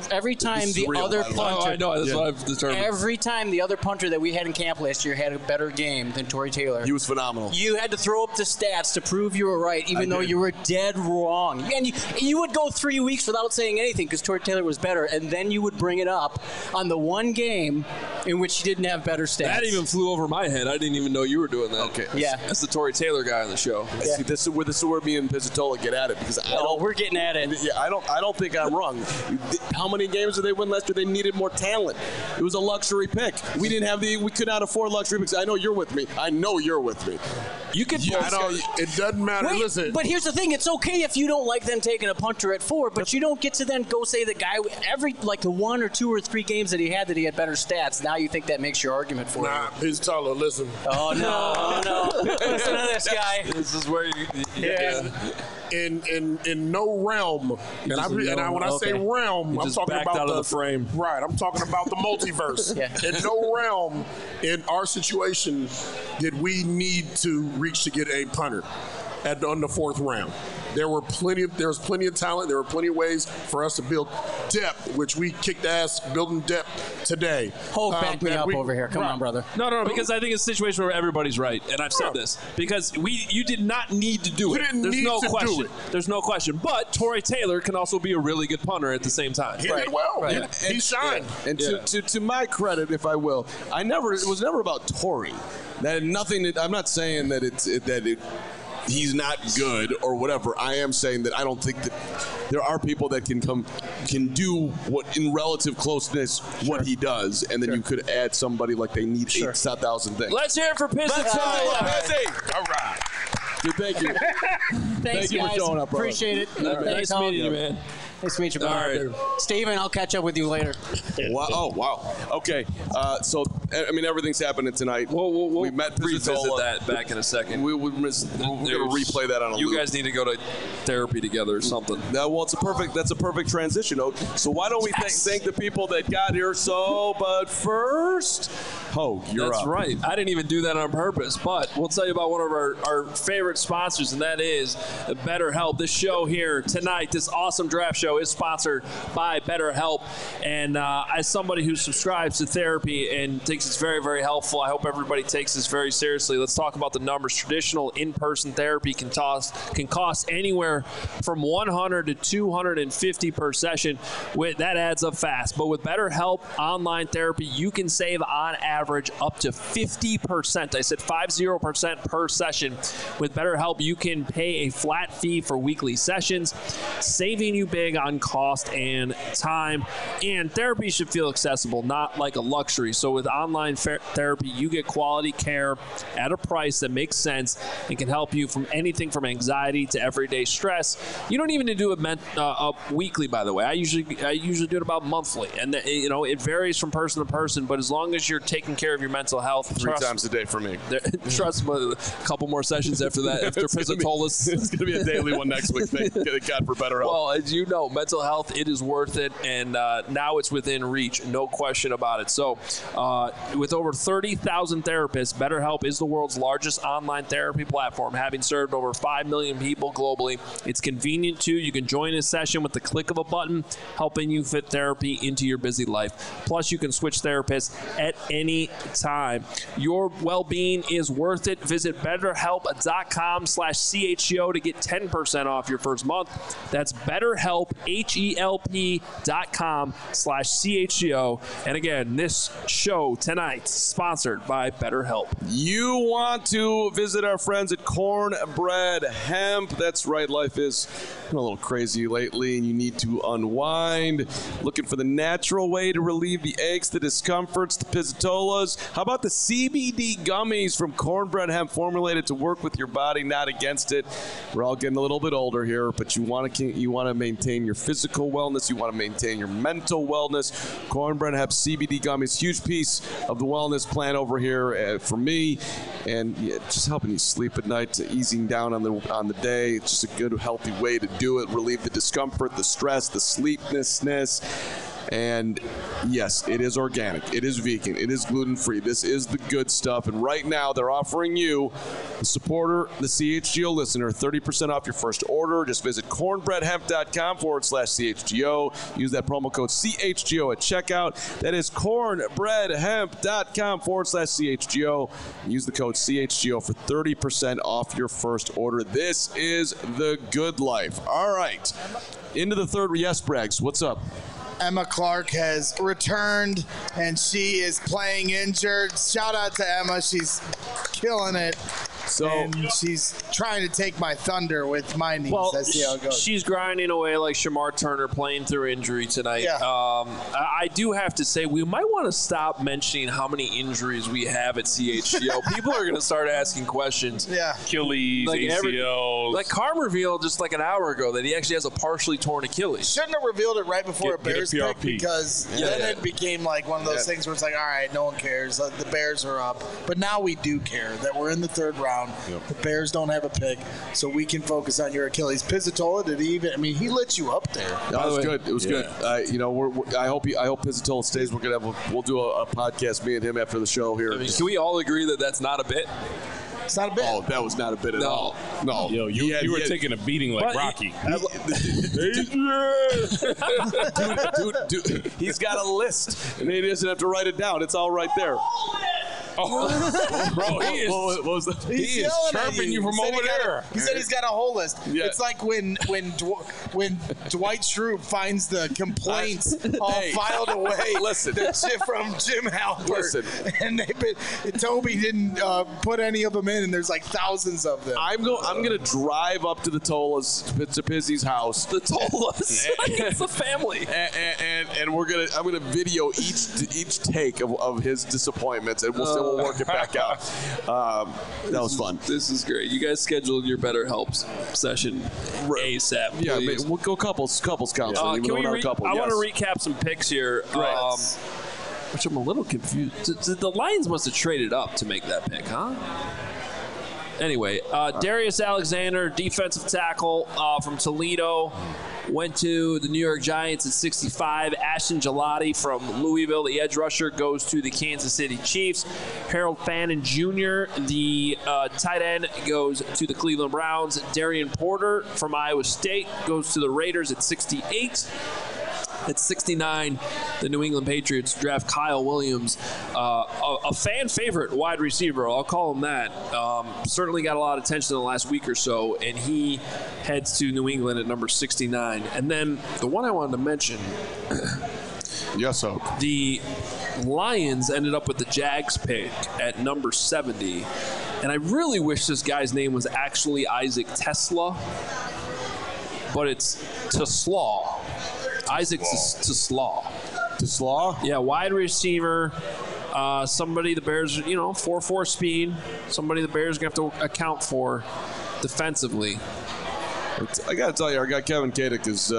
the other punter, I know, that's what I've determined. Every time the other punter that we had in camp last year had a better game than Tory Taylor. He was phenomenal. You had to throw up the stats to prove you were right, even though you were dead wrong. And you would go 3 weeks without saying anything because Tory Taylor was better, and then you would bring it up on the one game in which you didn't have better stats. That even flew over my head. I didn't even know you were doing that. Okay. Yeah. That's the Tory Taylor guy on the show. Yeah. See, this is where me and Pizzatola get at it because we're getting at it. Yeah, I don't think I'm wrong. How many games did they win last year? They needed more talent. It was a luxury pick. We could not afford luxury picks. I know you're with me. You could it doesn't matter. Wait, Listen. but here's the thing. It's okay if you don't like them taking a punter at 4, but you don't get to then go say the guy the 1 or 2 or 3 games that he had better stats. Now you think that makes your argument for him. Nah, he's taller. Listen. Oh, no. Listen to this guy. This is where you In no realm, when I say realm, I'm talking about out of the frame. Right, I'm talking about the multiverse. In no realm, in our situation, did we need to reach to get a punter on the 4th round. There was plenty of talent. There were plenty of ways for us to build depth, which we kicked ass building depth today. Back me up over here. Come on, brother. No, because I think it's a situation where everybody's right, and I've said this because you did not need to do it. There's no question. Do it. There's no question. But Torrey Taylor can also be a really good punter at the same time. He did well. Right. He shined. And to my credit, if I will, it was never about Torrey. That nothing. I'm not saying that he's not good or whatever. I am saying that I don't think that there are people that can do what in relative closeness what he does, and then you could add somebody like they need 8,000 things. Let's hear it for Pizzy. All right. Dude, thank you. Thanks, you guys. for showing up, brother. Appreciate it. Nice meeting you, man. Nice to meet you, brother. Right. Steven, I'll catch up with you later. Wow. Oh, wow. Okay. So, everything's happening tonight. We met revisit Pizzola. that back in a second. We're going to replay that on a loop. You guys need to go to therapy together or something. That's a perfect transition. So why don't we thank the people that got here? But first, you're That's up. right. I didn't even do that on purpose, but we'll tell you about one of our favorite sponsors, and that is BetterHelp. This show here tonight, this awesome draft show, is sponsored by BetterHelp. And as somebody who subscribes to therapy and thinks it's very, very helpful, I hope everybody takes this very seriously. Let's talk about the numbers. Traditional in-person therapy can cost anywhere from $100 to $250 per session. That adds up fast. But with BetterHelp online therapy, you can save on average up to 50%. I said 50% per session. With BetterHelp, you can pay a flat fee for weekly sessions, saving you big on cost and time. And therapy should feel accessible, not like a luxury. So with online therapy, you get quality care at a price that makes sense and can help you from anything from anxiety to everyday stress. You don't even need to do it weekly, by the way. I usually do it about monthly, and it varies from person to person. But as long as you're taking care of your mental health, 3 times a day for me. Trust me, a couple more sessions after that. After Pizzatolis, it's going to be a daily one next week. Thank God for BetterHelp. Well, as you know, mental health, it is worth it, and now it's within reach, no question about it. So, with over 30,000 therapists, BetterHelp is the world's largest online therapy platform, having served over 5 million people globally. It's convenient too. You can join a session with the click of a button, helping you fit therapy into your busy life. Plus, you can switch therapists at any time. Your well-being is worth it. Visit BetterHelp.com/CHGO to get 10% off your first month. That's BetterHelp, HELP.com/CHGO. And again, this show tonight sponsored by BetterHelp. You want to visit our friends at Cornbread Hemp. That's right, life is a little crazy lately, and you need to unwind. Looking for the natural way to relieve the aches, the discomforts, the pizzatolas. How about the CBD gummies from Cornbread Hemp, formulated to work with your body, not against it? We're all getting a little bit older here, but you want to maintain your physical wellness. You want to maintain your mental wellness. Cornbread Hemp CBD gummies, huge piece of the wellness plan over here for me, and just helping you sleep at night, easing down on the day. It's just a good, healthy way to do it. Relieve the discomfort, the stress, the sleeplessness. And yes, it is organic. It is vegan. It is gluten-free. This is the good stuff. And right now, they're offering you, the supporter, the CHGO listener, 30% off your first order. Just visit cornbreadhemp.com/CHGO. Use that promo code CHGO at checkout. That is cornbreadhemp.com/CHGO. Use the code CHGO for 30% off your first order. This is the good life. All right. Into the third. Yes, Braggs, what's up? Emma Clark has returned, and she is playing injured. Shout out to Emma. She's killing it. And she's trying to take my thunder with my knees. Well, I see how it goes. She's grinding away like Shamar Turner, playing through injury tonight. Yeah. I do have to say, we might want to stop mentioning how many injuries we have at CHGO. People are going to start asking questions. Yeah. Achilles, ACLs. Like Carm revealed just like an hour ago that he actually has a partially torn Achilles. Shouldn't have revealed it right before a Bears get a pick PRP. because then it became like one of those things where it's like, all right, no one cares. The Bears are up. But now we do care that we're in the third round. Yep. The Bears don't have a pick, so we can focus on your Achilles. Pizzatola, did he even? I mean, he lit you up there. That was good. It was good. I hope Pizzatola stays. We'll do a podcast, me and him, after the show here. I mean, can we all agree that that's not a bit? It's not a bit. Oh, that was not a bit at all. No. Yo, you were taking a beating like Rocky. Dude, he's got a list, and he doesn't have to write it down. It's all right there. Oh, bro, he is chirping you from over there. He said he's got a whole list. Yeah. It's like when Dwight Schrute finds the complaints all filed away. Listen. From Jim Halpert. Listen. And Toby didn't put any of them in, and there's like thousands of them. I'm going to drive up to the Tolas, to Pizzy's house. The Tolas. It's the family. And I'm gonna video each take of his disappointments, and we'll work it back out. That was fun. This is great. You guys scheduled your BetterHelp session ASAP. Please. Yeah, we'll go couples counseling. I want to Yes. recap some picks here. Which I'm a little confused. The Lions must have traded up to make that pick, huh? Anyway, Darius Alexander, defensive tackle from Toledo, went to the New York Giants at 65. Ashton Gelati from Louisville, the edge rusher, goes to the Kansas City Chiefs. Harold Fannin Jr., the tight end, goes to the Cleveland Browns. Darian Porter from Iowa State goes to the Raiders at 68. At 69, the New England Patriots draft Kyle Williams, a fan favorite wide receiver. I'll call him that. Certainly got a lot of attention in the last week or so, and he heads to New England at number 69. And then the one I wanted to mention. Yes, so. The Lions ended up with the Jags pick at number 70. And I really wish this guy's name was actually Isaac Tesla, but it's Teslaw. Isaac Teslaw. Teslaw? Yeah, wide receiver. Somebody the Bears, 4.4 speed. Somebody the Bears going to have to account for defensively. I got to tell you, our guy Kevin Kadick is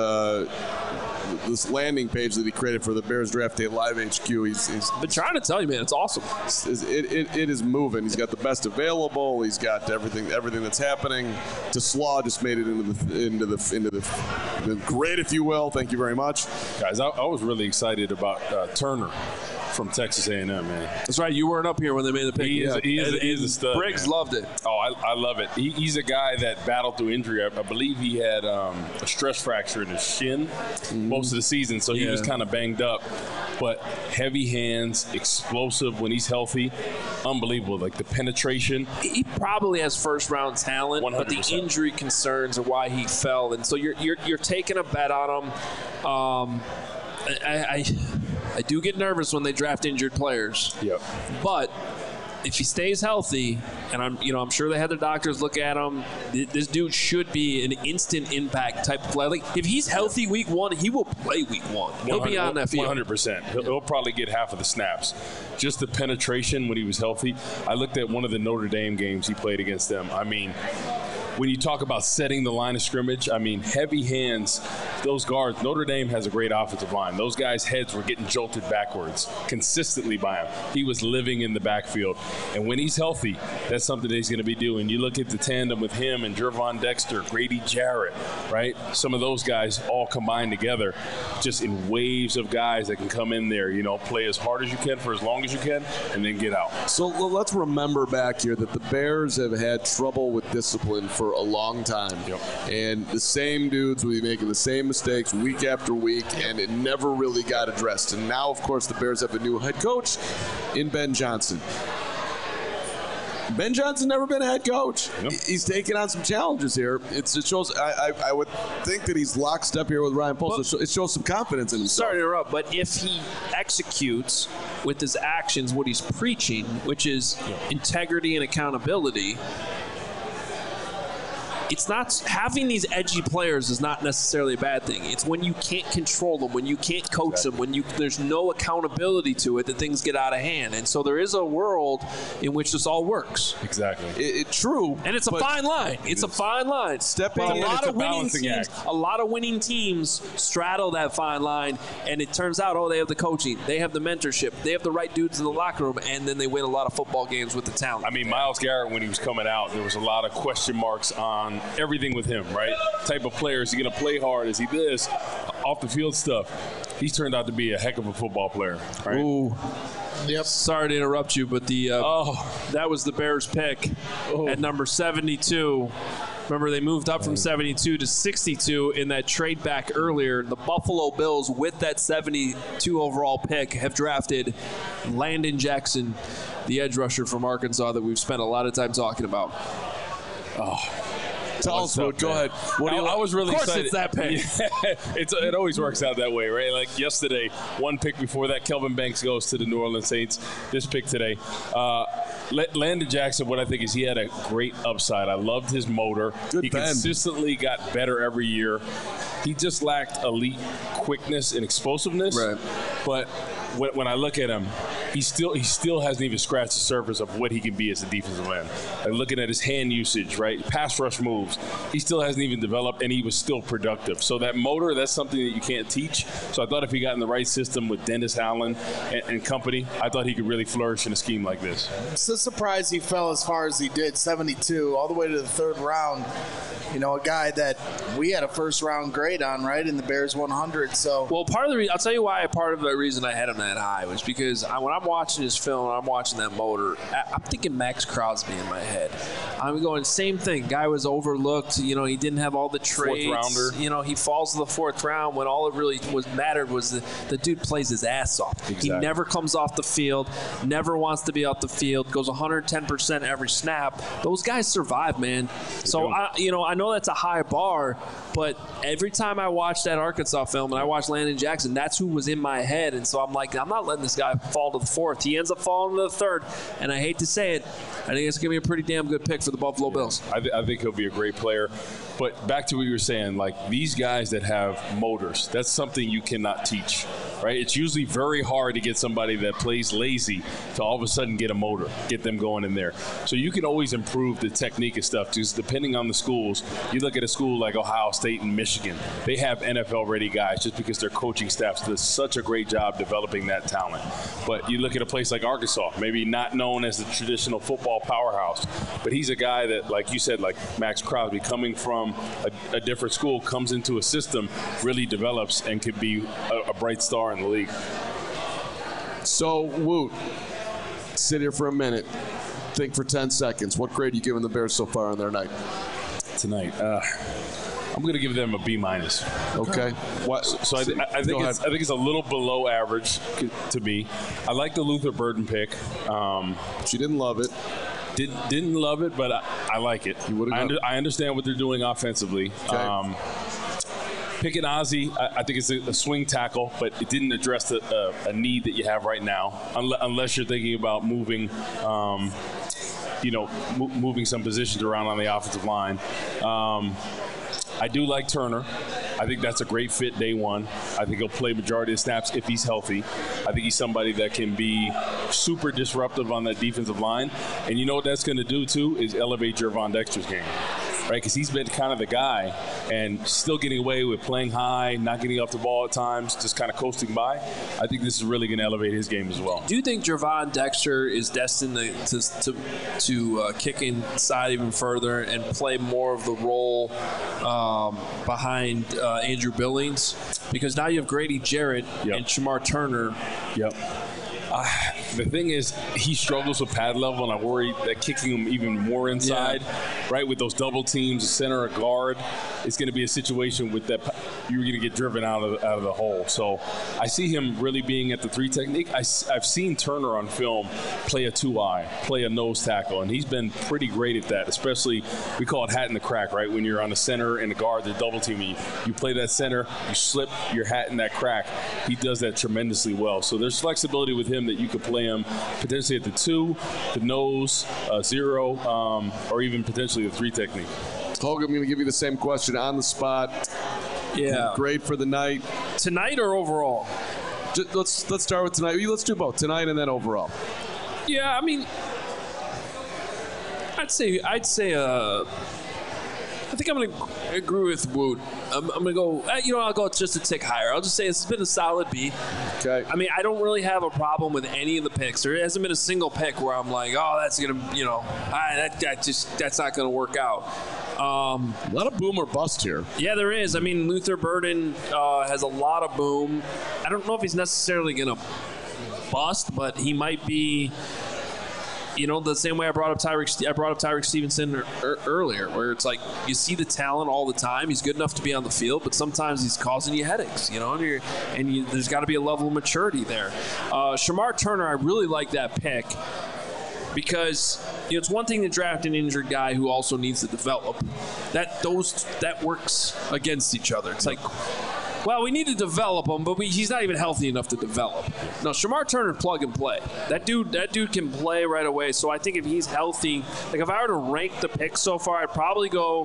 this landing page that he created for the Bears Draft Day Live HQ. He's been trying to tell you, man. It's awesome. It is moving. He's got the best available. He's got everything that's happening. Teslaw just made it into the grid, if you will. Thank you very much, guys. I was really excited about Turner from Texas A&M, man. That's right. You weren't up here when they made the pick. He is a stud. Briggs loved it. Oh, I love it. He's a guy that battled through injury. I believe he had a stress fracture in his shin most of the season, so he was kind of banged up. But heavy hands, explosive when he's healthy, unbelievable. Like the penetration. He probably has first-round talent, 100%. but the injury concerns are why he fell. And so you're taking a bet on him. I do get nervous when they draft injured players. Yep. But if he stays healthy, and I'm sure they had their doctors look at him, this dude should be an instant impact type of player. Like if he's healthy week 1, he will play week 1. He'll be on that field. 100%. He'll probably get half of the snaps. Just the penetration when he was healthy. I looked at one of the Notre Dame games he played against them. I mean, when you talk about setting the line of scrimmage, I mean, heavy hands, those guards, Notre Dame has a great offensive line. Those guys' heads were getting jolted backwards consistently by him. He was living in the backfield. And when he's healthy, that's something that he's going to be doing. You look at the tandem with him and Gervon Dexter, Grady Jarrett, right? Some of those guys all combined together just in waves of guys that can come in there, play as hard as you can for as long as you can and then get out. So let's remember back here that the Bears have had trouble with discipline for a long time. Yep. And the same dudes will be making the same mistakes week after week, and it never really got addressed. And now, of course, the Bears have a new head coach in Ben Johnson. Ben Johnson never been a head coach. Yep. He's taken on some challenges here. It shows. I would think that he's lockstep here with Ryan Poles. It shows some confidence in himself. Sorry to interrupt, but if he executes with his actions what he's preaching, which is integrity and accountability, it's not having these edgy players is not necessarily a bad thing. It's when you can't control them, when you can't coach them, when there's no accountability to it, that things get out of hand. And so there is a world in which this all works. Exactly. True. And it's a fine line. It's a fine line. Stepping in, it's a balancing act. A lot of winning teams straddle that fine line, and it turns out, they have the coaching, they have the mentorship, they have the right dudes in the locker room, and then they win a lot of football games with the talent. I mean, Myles Garrett, when he was coming out, there was a lot of question marks on everything with him, right? Type of player, is he going to play hard? Is he this? Off the field stuff. He's turned out to be a heck of a football player, right? Ooh. Yep. Sorry to interrupt you, but that was the Bears pick at number 72. Remember, they moved up from 72 to 62 in that trade back earlier. The Buffalo Bills, with that 72 overall pick, have drafted Landon Jackson, the edge rusher from Arkansas that we've spent a lot of time talking about. Tell us, Wood. Go ahead. I was really excited. It's that pick. Yeah, it always works out that way, right? Like yesterday, one pick before that, Kelvin Banks goes to the New Orleans Saints. This pick today. Landon Jackson, what I think is he had a great upside. I loved his motor. He consistently got better every year. He just lacked elite quickness and explosiveness. Right. But when I look at him, he still hasn't even scratched the surface of what he can be as a defensive end. Like looking at his hand usage, right, pass rush moves, he still hasn't even developed, and he was still productive. So that motor, that's something that you can't teach. So I thought if he got in the right system with Dennis Allen and company, I thought he could really flourish in a scheme like this. It's a surprise he fell as far as he did, 72, all the way to the third round. You know, a guy that we had a first-round grade on, right, in the Bears 100. So, well, part of the reason, I'll tell you why. Part of the reason I had him that high was because when I'm watching his film, and I'm watching that motor, I'm thinking Max Crosby in my head. I'm going, same thing. Guy was overlooked. You know, he didn't have all the traits. Fourth rounder. You know, he falls to the fourth round when all it really mattered was the dude plays his ass off. Exactly. He never comes off the field, never wants to be off the field, goes 110% every snap. Those guys survive, man. So, I know that's a high bar, but every time I watch that Arkansas film and I watch Landon Jackson, that's who was in my head. And so I'm like, I'm not letting this guy fall to the fourth. He ends up falling to the third. And I hate to say it, I think it's going to be a pretty damn good pick for the Buffalo Bills. I think he'll be a great player. But back to what you were saying, like these guys that have motors, that's something you cannot teach, right? It's usually very hard to get somebody that plays lazy to all of a sudden get a motor, get them going in there. So you can always improve the technique and stuff, just depending on the schools. You look at a school like Ohio State and Michigan, they have NFL-ready guys just because their coaching staff does such a great job developing that talent. But you look at a place like Arkansas, maybe not known as the traditional football powerhouse, but he's a guy that, like you said, like Max Crosby, coming from a different school, comes into a system, really develops, and could be a bright star in the league. So, Woot, sit here for a minute. Think for 10 seconds. What grade are you giving the Bears so far on their night? Tonight, I'm going to give them a B-. Okay. What? So I think it's a little below average to me. I like the Luther Burden pick. But you didn't love it. Didn't love it, but I like it. I understand what they're doing offensively. Okay. Picking Ozzie, I think it's a swing tackle, but it didn't address a need that you have right now, unless you're thinking about moving, moving some positions around on the offensive line. I do like Turner. I think that's a great fit day one. I think he'll play majority of snaps if he's healthy. I think he's somebody that can be super disruptive on that defensive line. And you know what that's going to do, too, is elevate Gervon Dexter's game. Right, because he's been kind of the guy and still getting away with playing high, not getting off the ball at times, just kind of coasting by. I think this is really going to elevate his game as well. Do you think Gervon Dexter is destined to kick inside even further and play more of the role behind Andrew Billings? Because now you have Grady Jarrett and Shamar Turner. Yep. The thing is, he struggles with pad level, and I worry that kicking him even more inside, right, with those double teams, a center, a guard, it's going to be a situation with that you're going to get driven out of the hole. So I see him really being at the three technique. I've seen Turner on film play a 2-eye, play a nose tackle, and he's been pretty great at that, especially we call it hat in the crack, right, when you're on the center and the guard, they're double teaming you play that center, you slip your hat in that crack. He does that tremendously well. So there's flexibility with him that you could play him potentially at the 2, the nose, 0, or even potentially the 3 technique. Hogan, I'm going to give you the same question on the spot. Yeah. Grade for the night. Tonight or overall? Let's start with tonight. Let's do both, tonight and then overall. Yeah, I mean, I'd say I think I'm going to agree with Woot. I'm going to go, I'll go just a tick higher. I'll just say it's been a solid B. Okay. I mean, I don't really have a problem with any of the picks. There hasn't been a single pick where I'm like, oh, that's going to, that's not going to work out. A lot of boom or bust here. Yeah, there is. I mean, Luther Burden has a lot of boom. I don't know if he's necessarily going to bust, but he might be, the same way I brought up Tyreek Stevenson earlier, where it's like you see the talent all the time. He's good enough to be on the field, but sometimes he's causing you headaches, and there's got to be a level of maturity there. Shamar Turner, I really like that pick because it's one thing to draft an injured guy who also needs to develop. That works against each other. It's like, well, we need to develop him, but he's not even healthy enough to develop. No, Shamar Turner, plug and play. That dude can play right away. So I think if he's healthy, like if I were to rank the picks so far, I'd probably go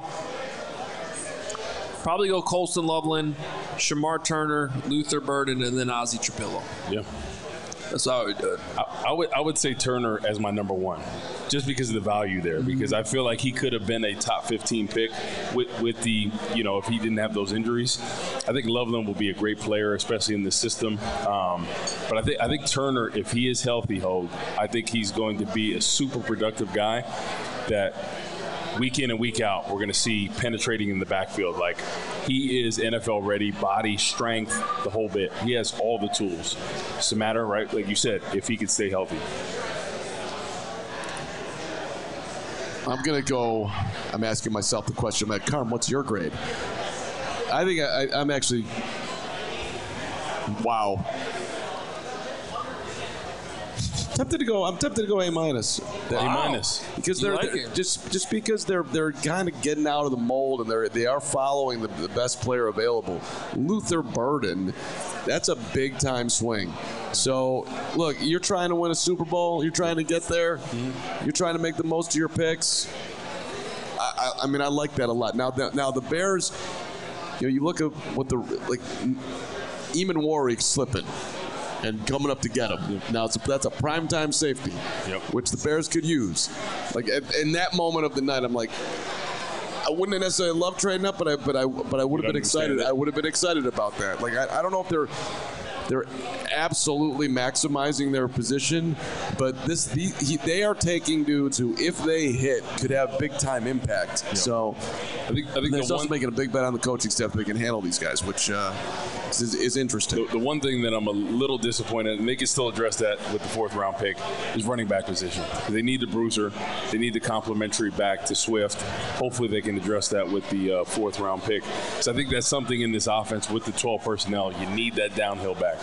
Colston Loveland, Shamar Turner, Luther Burden, and then Ozzie Trapillo. Yeah. That's how I would do it. I would say Turner as my number one, just because of the value there. Because I feel like he could have been a top 15 pick with the, if he didn't have those injuries. I think Loveland will be a great player, especially in this system. But I think Turner, if he is healthy, I think he's going to be a super productive guy that week in and week out, we're going to see penetrating in the backfield. Like, he is NFL ready, body, strength, the whole bit. He has all the tools. It's a matter, right, like you said, if he could stay healthy. I'm asking myself the question, Matt Carm, what's your grade? I think I'm actually, wow. I'm tempted to go A-. A-. Because they're just because they're kind of getting out of the mold and they are following the best player available. Luther Burden, that's a big time swing. So look, you're trying to win a Super Bowl, you're trying to get there, you're trying to make the most of your picks. I mean, I like that a lot. Now the Bears, you look at what Eamon Warwick slipping and coming up to get him. Now that's a primetime safety, which the Bears could use. Like in that moment of the night, I'm like, I wouldn't have necessarily loved trading up, but I would have been excited. I would have been excited about that. Like I don't know if they're absolutely maximizing their position, but they are taking dudes who, if they hit, could have big time impact. Yeah. So I think they're also making a big bet on the coaching staff that they can handle these guys, which is interesting. The one thing that I'm a little disappointed, and they can still address that with the fourth round pick, is running back position. They need the bruiser. They need the complementary back to Swift. Hopefully they can address that with the fourth round pick. So I think that's something in this offense with the 12 personnel. You need that downhill back.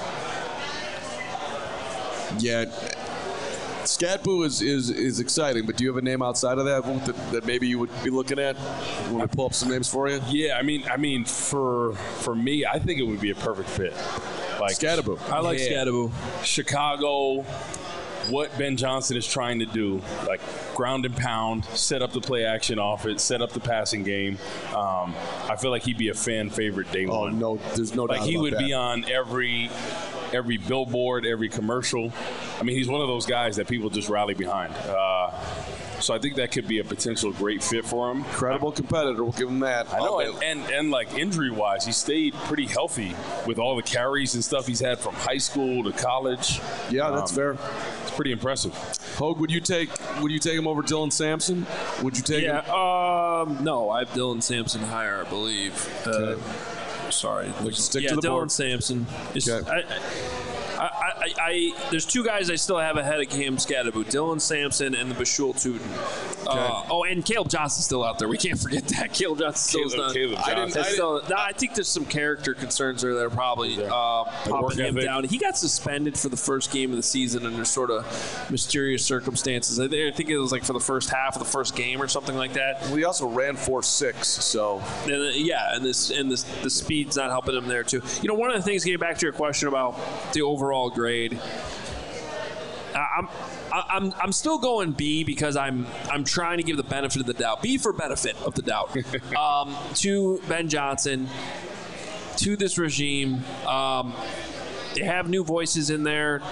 Yeah, Scatboo is exciting, but do you have a name outside of that maybe you would be looking at? Want me to pull up some names for you? Yeah, I mean, for me, I think it would be a perfect fit. Like Scatboo. I like Scatboo. Chicago, what Ben Johnson is trying to do, like ground and pound, set up the play action offense, set up the passing game. I feel like he'd be a fan favorite day one. Oh no, there's no doubt about that. Like he would be on every billboard, every commercial. I mean, he's one of those guys that people just rally behind. So I think that could be a potential great fit for him. Incredible competitor, we'll give him that. I know, and like injury-wise, he stayed pretty healthy with all the carries and stuff he's had from high school to college. Yeah, that's fair. It's pretty impressive. Hogue, would you take him over Dylan Sampson? Would you take him? No, I have Dylan Sampson higher, I believe. Okay. Sorry. Stick to the board. Dylan Sampson. Okay. There's two guys I still have ahead of Cam Scatterboot, Dylan Sampson and the Bashul Tootin. Okay. And Caleb Johnson's still out there. We can't forget that. Caleb Johnson I think there's some character concerns there that are probably popping him down. He got suspended for the first game of the season under sort of mysterious circumstances. I think it was like for the first half of the first game or something like that. Well, he also ran 4.6, so and the speed's not helping him there too. One of the things, getting back to your question about the overall grade, I'm still going B because I'm trying to give the benefit of the doubt. B for benefit of the doubt to Ben Johnson, to this regime. They have new voices in there.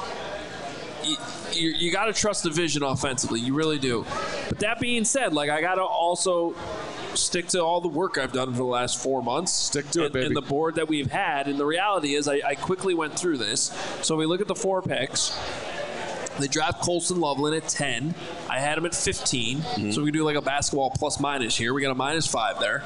You got to trust the vision offensively. You really do. But that being said, like I got to also stick to all the work I've done for the last 4 months. Stick to it, baby. And the board that we've had. And the reality is I quickly went through this. So we look at the 4 picks. They draft Colston Loveland at 10. I had him at 15. Mm-hmm. So we can do like a basketball plus minus here. We got a -5 there.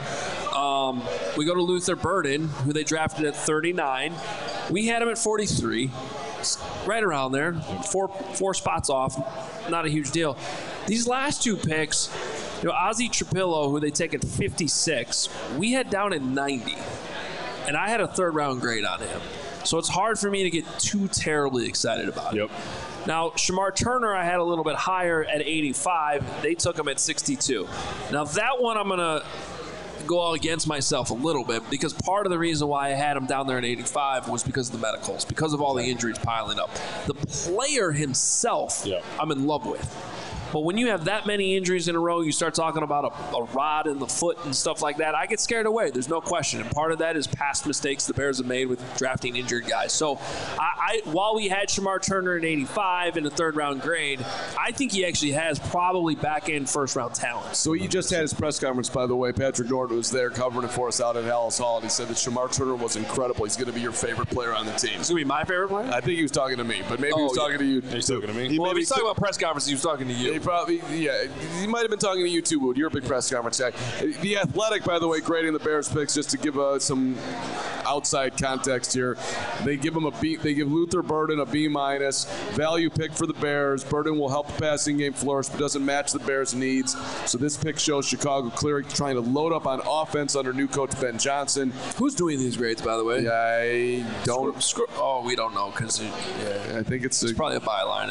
We go to Luther Burden, who they drafted at 39. We had him at 43. Right around there. Four spots off. Not a huge deal. These last 2 picks, Ozzy Trapillo, who they take at 56, we had down at 90. And I had a 3rd-round grade on him. So it's hard for me to get too terribly excited about it. Yep. Now, Shamar Turner, I had a little bit higher at 85. They took him at 62. Now, that one I'm going to go against myself a little bit because part of the reason why I had him down there at 85 was because of the medicals, because of all the injuries piling up. The player himself, I'm in love with. But when you have that many injuries in a row, you start talking about a rod in the foot and stuff like that, I get scared away. There's no question. And part of that is past mistakes the Bears have made with drafting injured guys. So while we had Shamar Turner at 85 in a 3rd-round grade, I think he actually has probably back-end first-round talent. So he just had his press conference, by the way. Patrick Norton was there covering it for us out at Hallis Hall, and he said that Shamar Turner was incredible. He's going to be your favorite player on the team. He's going to be my favorite player? I think he was talking to me, but maybe he was talking to you. He's talking to me. Well, if he's talking about press conferences, he was talking to you. He probably, he might have been talking to you too, Wood. You're a big press conference guy. The Athletic, by the way, grading the Bears picks, just to give some outside context here. They give him a B. They give Luther Burden a B-. Value pick for the Bears. Burden will help the passing game flourish, but doesn't match the Bears' needs. So this pick shows Chicago clearly trying to load up on offense under new coach Ben Johnson. Who's doing these grades, by the way? I don't. We don't know because I think it's probably a byline.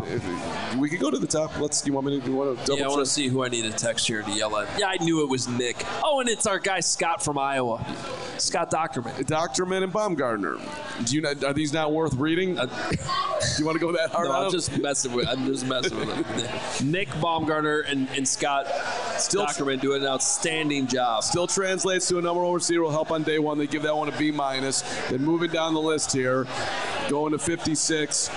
We could go to the top. You want me to? You want to double I want to see who I need to text here to yell at. Yeah, I knew it was Nick. Oh, and it's our guy Scott from Iowa, Scott Docterman. Docterman and Baumgartner. Are these not worth reading? Do you want to go that hard? No, I'm just messing with him. Nick Baumgartner and Scott Docterman do an outstanding job. Still translates to a number one receiver will help on day one. They give that one a B-. Then moving down the list here, going to 56.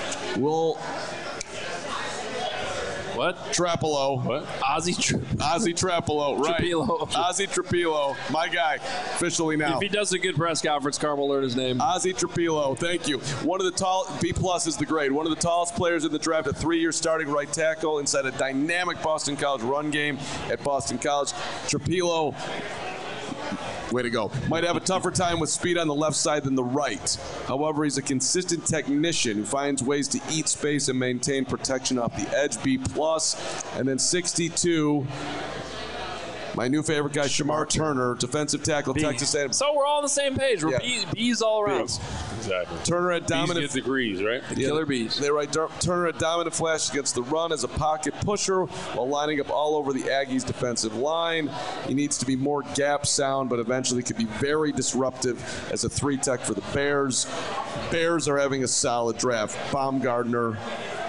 What? Trapillo. What? Ozzy Trapillo, right. Trapillo. Ozzy Trapillo, my guy, officially now. If he does a good press conference, Carm will learn his name. Ozzy Trapillo, thank you. One of the B+ is the grade. One of the tallest players in the draft, a 3-year starting right tackle inside a dynamic Boston College run game at Boston College. Trapillo, way to go. Might have a tougher time with speed on the left side than the right. However, he's a consistent technician who finds ways to eat space and maintain protection off the edge. B+. And then 62, my new favorite guy, Shamar Turner, defensive tackle, Texas A&M. So we're all on the same page. We're B's all around. B's. Exactly. Turner at dominant. Bees get degrees, right? Killer bees. They write Turner at dominant flash against the run as a pocket pusher while lining up all over the Aggies' defensive line. He needs to be more gap sound, but eventually could be very disruptive as a 3-tech for the Bears. Bears are having a solid draft. Baumgartner.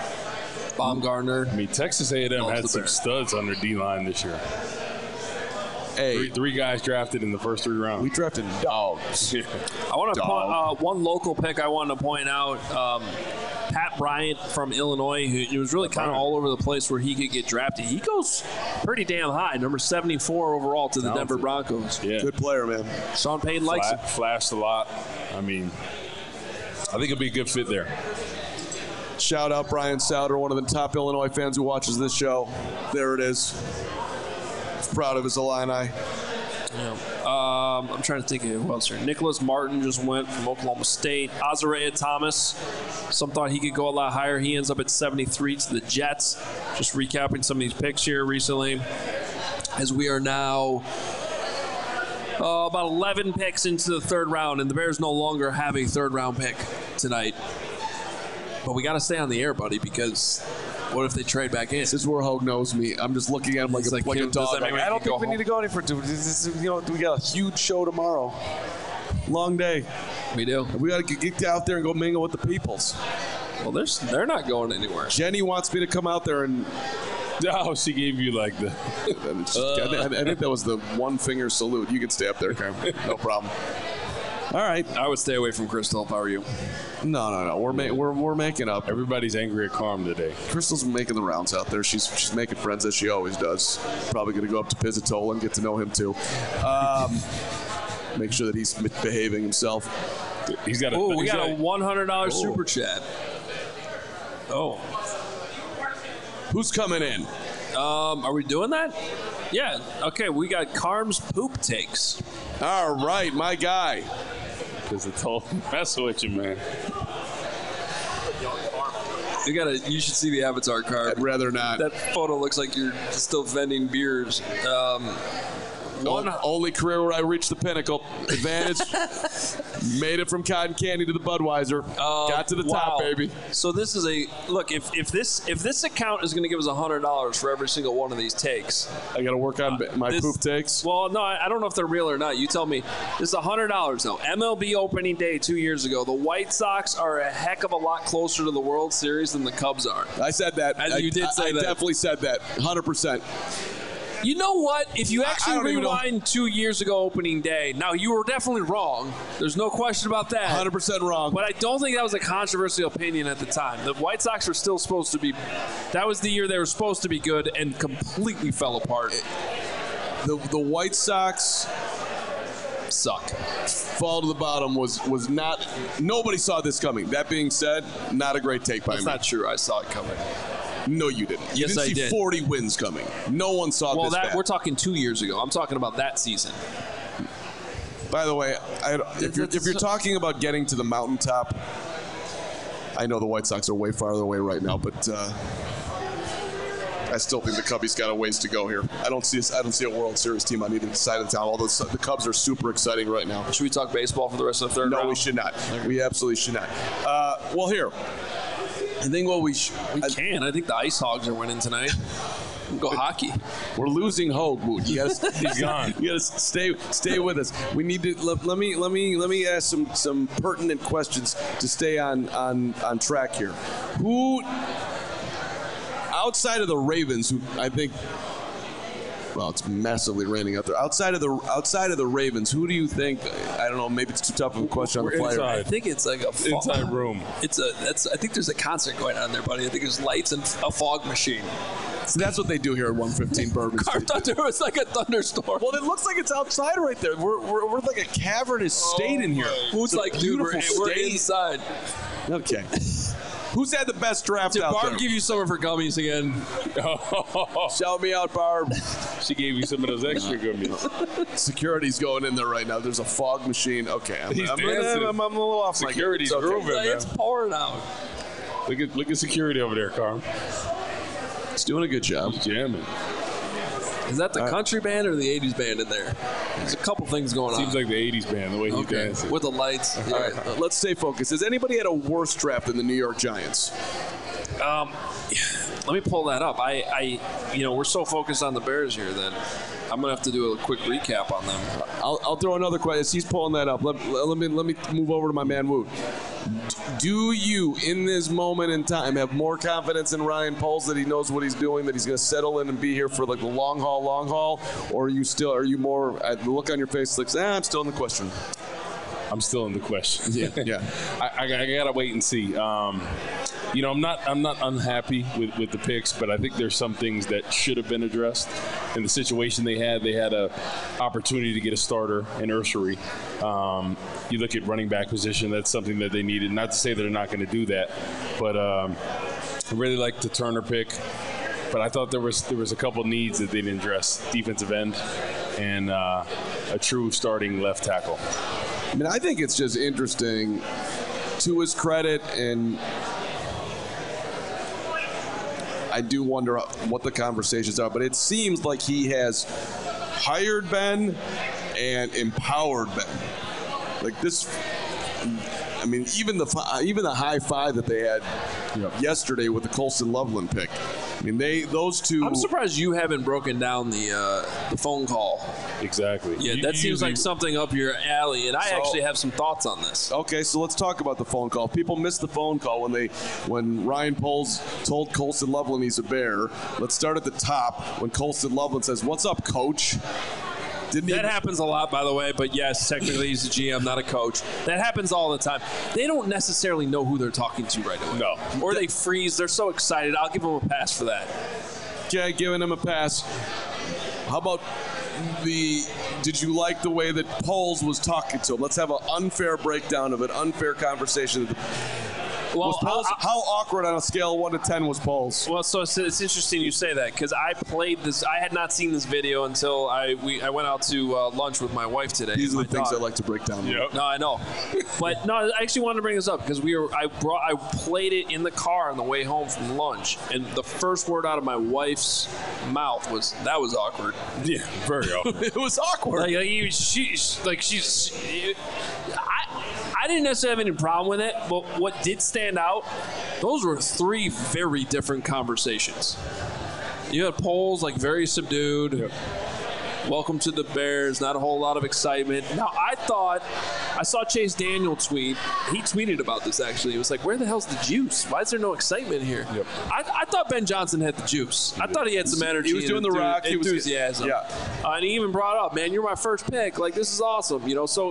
I mean, Texas A&M had some studs on their D-line this year. Three guys drafted in the first 3 rounds. We drafted dogs. I want to point one local pick I wanted to point out. Pat Bryant from Illinois, who was really kind of all over the place where he could get drafted. He goes pretty damn high, number 74 overall to the Denver Broncos. Yeah. Good player, man. Sean Payton likes him. Flashed a lot. I mean, I think it'll be a good fit there. Shout out Brian Souter, one of the top Illinois fans who watches this show. There it is. Proud of his Illini. Yeah. I'm trying to think of who else here. Nicholas Martin just went from Oklahoma State. Azariah Thomas. Some thought he could go a lot higher. He ends up at 73 to the Jets. Just recapping some of these picks here recently. As we are now about 11 picks into the 3rd round, and the Bears no longer have a 3rd-round pick tonight. But we got to stay on the air, buddy, because what if they trade back in? This is where Hogue knows me. I'm just looking at him like a dog. I don't think we need to go any further. We got a huge show tomorrow. Long day. We do. We got to get out there and go mingle with the peoples. Well, they're not going anywhere. Jenny wants me to come out there and. Oh, she gave you like the. I think that was the one finger salute. You can stay up there, Carmen. No problem. All right. I would stay away from Crystal if I were you. No. We're making up. Everybody's angry at Carm today. Crystal's making the rounds out there. She's making friends as she always does. Probably going to go up to Pizzatola and get to know him too. Make sure that he's behaving himself. He's got we got a $100 super chat. Oh. Who's coming in? Are we doing that? Yeah. Okay, we got Carm's poop takes. All right, my guy. Because it's all messing with you, man. You should see the avatar card. I'd rather not. That photo looks like you're still vending beers. Only career where I reached the pinnacle. Advantage. Made it from cotton candy to the Budweiser. Got to the top, baby. So this is look. If this account is going to give us $100 for every single one of these takes, I got to work on my poop takes. Well, no, I don't know if they're real or not. You tell me. This is $100 though. MLB opening day 2 years ago. The White Sox are a heck of a lot closer to the World Series than the Cubs are. I said that. You did say that. I definitely said that. 100%. You know what? If you actually rewind 2 years ago opening day, now you were definitely wrong. There's no question about that. 100% wrong. But I don't think that was a controversial opinion at the time. The White Sox were still supposed to be – that was the year they were supposed to be good and completely fell apart. The White Sox suck. Fall to the bottom was not – nobody saw this coming. That being said, not a great take by me. That's not true. I saw it coming. No, you didn't. You didn't see 40 wins coming. No one saw this bad. We're talking 2 years ago. I'm talking about that season. By the way, if you're talking about getting to the mountaintop, I know the White Sox are way farther away right now, but I still think the Cubbies got a ways to go here. I don't see a World Series team on either side of town. Although the Cubs are super exciting right now. Should we talk baseball for the rest of the third round? No, we should not. We absolutely should not. Well, here. I think we can. I think the Ice Hogs are winning tonight. Go hockey. We're losing Hogue. He's gone. You got to stay with us. We need to let me ask some pertinent questions to stay on track here. Who outside of the Ravens, who I think, well, it's massively raining out there. Outside of the Ravens, who do you think? I don't know. Maybe it's too tough of a question on the fly. I think it's like a inside room. I think there's a concert going on there, buddy. I think there's lights and a fog machine. So that's what they do here at 115 Bourbon Street. I thought there was like a thunderstorm. Well, it looks like it's outside right there. We're like a cavernous state in here. Who's like, dude, we're inside. Okay. Who's had the best draft out Barb there? Barb give you some of her gummies again? Shout me out, Barb. She gave you some of those extra gummies. Security's going in there right now. There's a fog machine. Okay, I'm a little off. Security's grooving, man. It's pouring out. Look at security over there, Carm. It's doing a good job. He's jamming. Is that the country band or the 80s band in there? There's a couple things going on. Seems like the 80s band, the way he's dancing. With the lights. All right, let's stay focused. Has anybody had a worse draft than the New York Giants? Let me pull that up. We're so focused on the Bears here that I'm gonna have to do a quick recap on them. I'll throw another question. As he's pulling that up, let me move over to my man Woot. Do you, in this moment in time, have more confidence in Ryan Poles that he knows what he's doing, that he's going to settle in and be here for like the long haul, or are you more? The look on your face looks, I'm still in the question. I'm still in the question. Yeah. I gotta wait and see. I'm not unhappy with the picks, but I think there's some things that should have been addressed. In the situation they had a opportunity to get a starter in Ursery. You look at running back position, that's something that they needed. Not to say they're not going to do that, but I really like the Turner pick. But I thought there was a couple needs that they didn't address: defensive end and a true starting left tackle. I mean, I think it's just interesting, to his credit, and I do wonder what the conversations are, but it seems like he has hired Ben and empowered Ben. Like this, mean, even the high five that they had yesterday with the Colston Loveland pick. I mean, those two. I'm surprised you haven't broken down the phone call. Exactly. Yeah, that seems like something up your alley, and I actually have some thoughts on this. Okay, so let's talk about the phone call. People missed the phone call when Ryan Poles told Colston Loveland he's a Bear. Let's start at the top when Colston Loveland says, "What's up, coach?" That happens a lot, by the way, but yes, technically he's a GM, not a coach. That happens all the time. They don't necessarily know who they're talking to right away. No. Or they freeze. They're so excited. I'll give them a pass for that. Okay, giving him a pass. How about did you like the way that Poles was talking to him? Let's have an unfair breakdown of it, unfair conversation. Well, how awkward on a scale of 1 to 10 was Poles? Well, so it's interesting you say that because I played this. I had not seen this video until I went out to lunch with my wife today. These are the things I like to break down. Yep. No, I know, but no, I actually wanted to bring this up because I played it in the car on the way home from lunch, and the first word out of my wife's mouth was that was awkward. Yeah, very awkward. It was awkward. I didn't necessarily have any problem with it, but what did stand out, those were 3 very different conversations. You had Poles very subdued. Yep. Welcome to the Bears. Not a whole lot of excitement. Now, I saw Chase Daniel tweet. He tweeted about this, actually. He was like, where the hell's the juice? Why is there no excitement here? Yep. I thought Ben Johnson had the juice. I thought he had some energy. He was doing the rock. He was enthusiasm. Yeah. And he even brought up, man, you're my first pick. This is awesome. So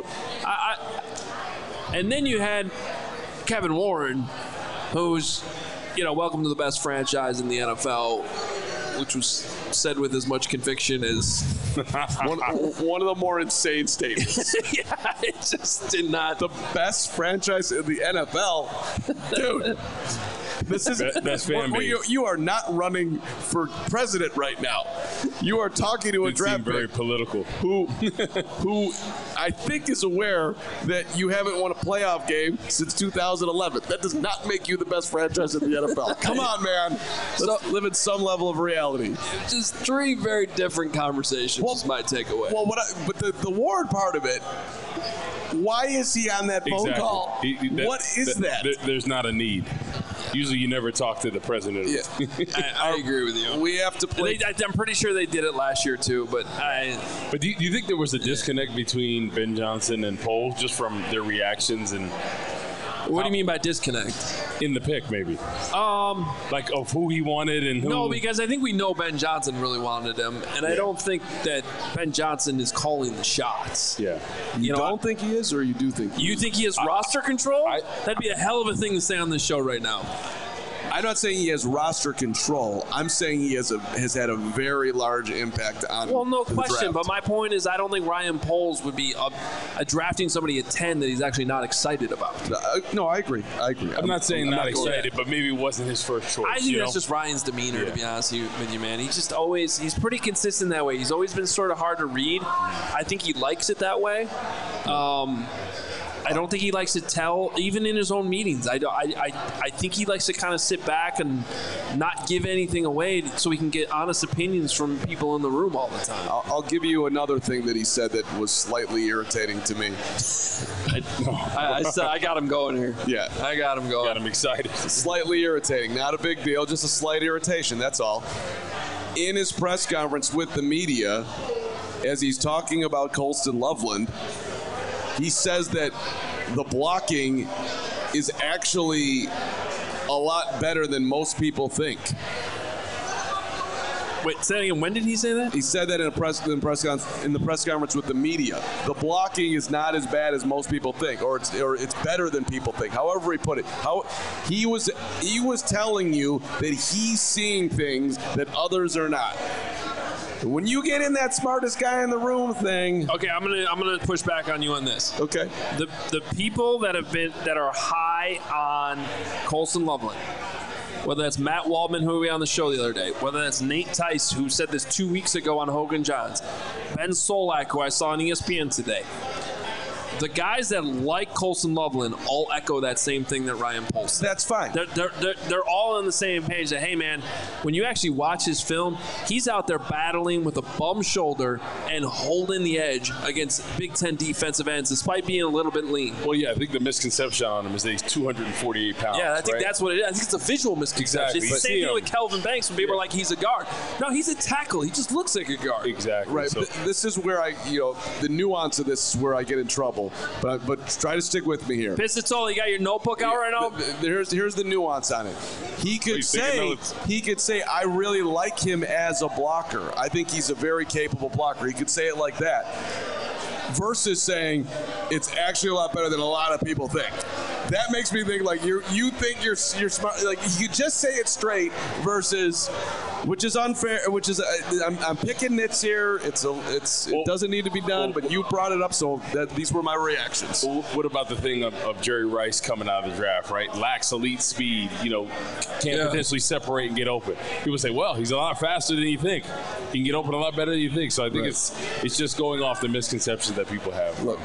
and then you had Kevin Warren, who's, welcome to the best franchise in the NFL, which was said with as much conviction as one of the more insane statements. Yeah, it just did not. The best franchise in the NFL, dude. This is best fan base. You are not running for president right now. You are talking to a draft pick very political. Who I think is aware that you haven't won a playoff game since 2011. That does not make you the best franchise in the NFL. Come on, man. Let's live in some level of reality. Just 3 very different conversations. Is my takeaway. Well, but the Ward part of it. Why is he on that phone call? What is that? There's not a need. Usually you never talk to the president. Yeah. I agree with you. We have to play. I'm pretty sure they did it last year too, but do you think there was a disconnect between Ben Johnson and Poles just from their reactions and? What do you mean by disconnect? In the pick, maybe. Of who he wanted and who. No, because I think we know Ben Johnson really wanted him, and I don't think that Ben Johnson is calling the shots. Yeah. You don't think he is, or you do think you think he has roster control? That'd be a hell of a thing to say on this show right now. I'm not saying he has roster control. I'm saying he has had a very large impact on. Well, no the question. draft. But my point is, I don't think Ryan Poles would be drafting somebody at 10 that he's actually not excited about. No, I agree. I'm not saying not excited, but maybe it wasn't his first choice. I think that's just Ryan's demeanor, to be honest with you, man. He's just he's pretty consistent that way. He's always been sort of hard to read. I think he likes it that way. I don't think he likes to tell, even in his own meetings. I think he likes to kind of sit back and not give anything away so he can get honest opinions from people in the room all the time. I'll give you another thing that he said that was slightly irritating to me. I got him going here. Yeah. I got him going. Got him excited. Slightly irritating. Not a big deal, just a slight irritation, that's all. In his press conference with the media, as he's talking about Colston Loveland, he says that the blocking is actually a lot better than most people think. Wait, say again, when did he say that? He said that in the press conference with the media. The blocking is not as bad as most people think, or it's better than people think. However he put it, he was telling you that he's seeing things that others are not. When you get in that smartest guy in the room thing. Okay, I'm gonna push back on you on this. Okay. The people that are high on Colston Loveland, whether that's Matt Waldman, who we had on the show the other day, whether that's Nate Tice, who said this 2 weeks ago on Hogan Johns, Ben Solak, who I saw on ESPN today. the guys that like Colston Loveland all echo that same thing that Ryan Poles said. That's fine. They're all on the same page that, hey, man, when you actually watch his film, he's out there battling with a bum shoulder and holding the edge against Big Ten defensive ends despite being a little bit lean. Well, yeah, I think the misconception on him is that he's 248 pounds. Yeah, I think that's what it is. I think it's a visual misconception. Exactly. It's the same thing with Kelvin Banks when people are like, he's a guard. No, he's a tackle. He just looks like a guard. Exactly. Right. So, This is where the nuance of this is where I get in trouble. But try to stick with me here. Pisatola, you got your notebook out right now? Here's the nuance on it. He could say, I really like him as a blocker. I think he's a very capable blocker. He could say it like that. Versus saying it's actually a lot better than a lot of people think. That makes me think like you think you're smart. Like you just say it straight versus, which is unfair. Which is I'm picking nits here. It doesn't need to be done, but you brought it up, so these were my reactions. What about the thing of Jerry Rice coming out of the draft, right? Lacks elite speed, can't potentially separate and get open. People say, well, he's a lot faster than you think. He can get open a lot better than you think. So I think it's just going off the misconceptions that people have. Look,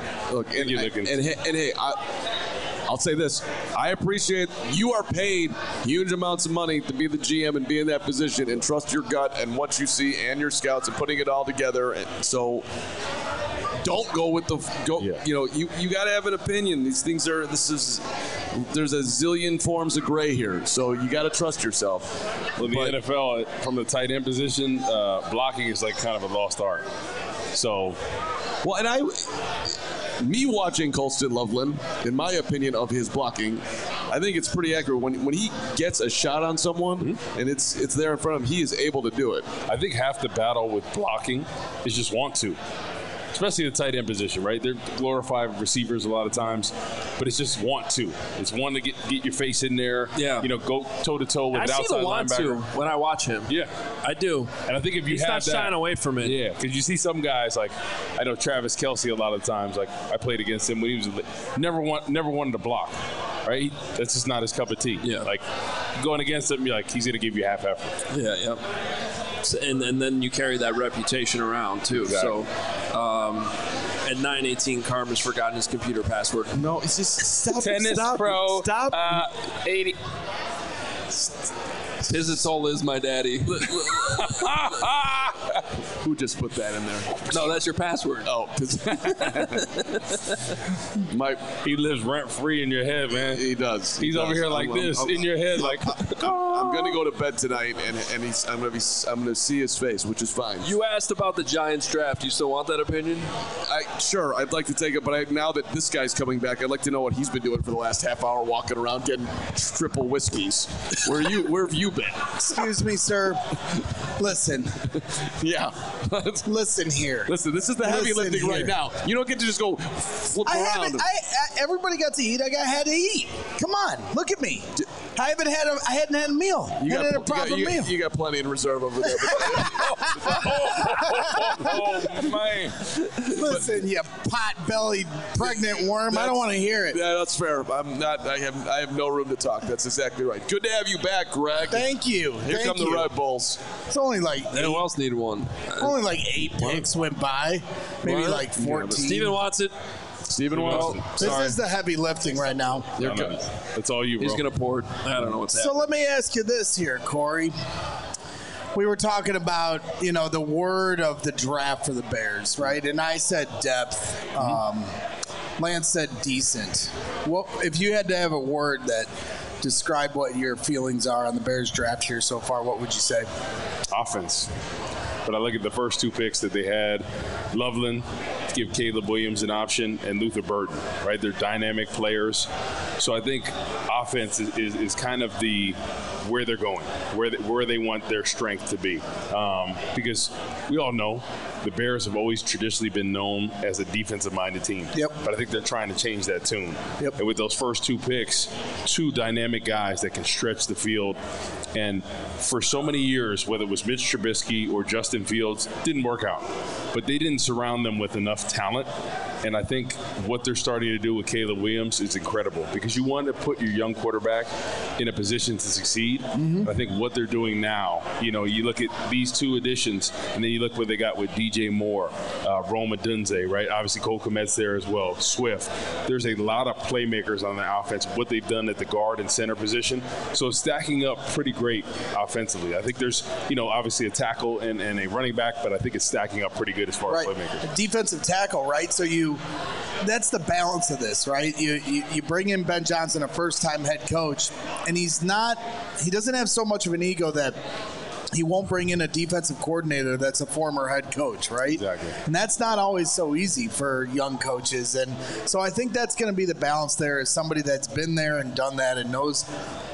hey, I'll say this. I appreciate you are paid huge amounts of money to be the GM and be in that position and trust your gut and what you see and your scouts and putting it all together. And so don't go with you got to have an opinion. These things there's a zillion forms of gray here. So you got to trust yourself. Well, the NFL, from the tight end position, blocking is like kind of a lost art. So, well, and me watching Colston Loveland, in my opinion of his blocking, I think it's pretty accurate. When he gets a shot on someone and it's there in front of him, he is able to do it. I think half the battle with blocking is just want to. Especially the tight end position, right? They're glorified receivers a lot of times, but it's just want to. It's one to get your face in there. Yeah. Go toe to toe with an outside linebacker. I see the want to when I watch him. Yeah, I do. And I think if you he's have not shying away from it. Yeah, because you see some guys like I know Travis Kelce a lot of times. Like I played against him when he was never wanted to block. Right? That's just not his cup of tea. Yeah. Like going against him, you're like he's gonna give you half effort. Yeah. Yep. And then you carry that reputation around too. Exactly. So at 9:18, Carmen's forgotten his computer password. No, it's just stop. Tennis stop, Pro. Stop. 80. Pisatola is my daddy. Who just put that in there? No, that's your password. Oh, he lives rent free in your head, man. He does. He's over here like this in your head, like. I'm gonna go to bed tonight, and I'm gonna see his face, which is fine. You asked about the Giants draft. You still want that opinion? Sure, I'd like to take it, but now that this guy's coming back, I'd like to know what he's been doing for the last half hour, walking around getting triple whiskeys. Where have you been? Excuse me, sir. Listen. Yeah. Listen here. Listen, this is the heavy lifting right now. You don't get to just go flip around. Everybody got to eat. I had to eat. Come on, look at me. I hadn't had a meal. You hadn't had a proper meal. You got plenty in reserve over there. Oh, man. Listen, you pot-bellied pregnant worm. I don't want to hear it. Yeah, that's fair. I'm not. I have no room to talk. That's exactly right. Good to have you back, Greg. Thank you. Here come the Red Bulls. It's only like who else need one? Only like 8 picks went by. Maybe like 14. Yeah, Steven wants it. Steven wants it. This is the heavy lifting right now. That's all you, bro. He's going to pour it. I don't know what's happening. So let me ask you this here, Corey. We were talking about, the word of the draft for the Bears, right? And I said depth. Lance said decent. Well, if you had to have a word that described what your feelings are on the Bears draft here so far, what would you say? Offense. But I look at the first 2 picks that they had, Loveland, to give Caleb Williams an option, and Luther Burden, right? They're dynamic players. So I think offense is kind of where they're going, where they want their strength to be. Because we all know the Bears have always traditionally been known as a defensive-minded team. Yep. But I think they're trying to change that tune. Yep. And with those first 2 picks, 2 dynamic guys that can stretch the field. And for so many years, whether it was Mitch Trubisky or Justin Fields, didn't work out. But they didn't surround them with enough talent And I think what they're starting to do with Caleb Williams is incredible because you want to put your young quarterback in a position to succeed. Mm-hmm. I think what they're doing now, you look at these two additions, and then you look what they got with DJ Moore, Rome Odunze, right? Obviously, Cole Kmet's there as well, Swift. There's a lot of playmakers on the offense, what they've done at the guard and center position. So it's stacking up pretty great offensively. I think there's, obviously a tackle and a running back, but I think it's stacking up pretty good as far as playmakers. A defensive tackle, right? So that's the balance of this, right? You bring in Ben Johnson, a first-time head coach, and he doesn't have so much of an ego that he won't bring in a defensive coordinator that's a former head coach, right? Exactly. And that's not always so easy for young coaches. And so I think that's going to be the balance there, is somebody that's been there and done that and knows,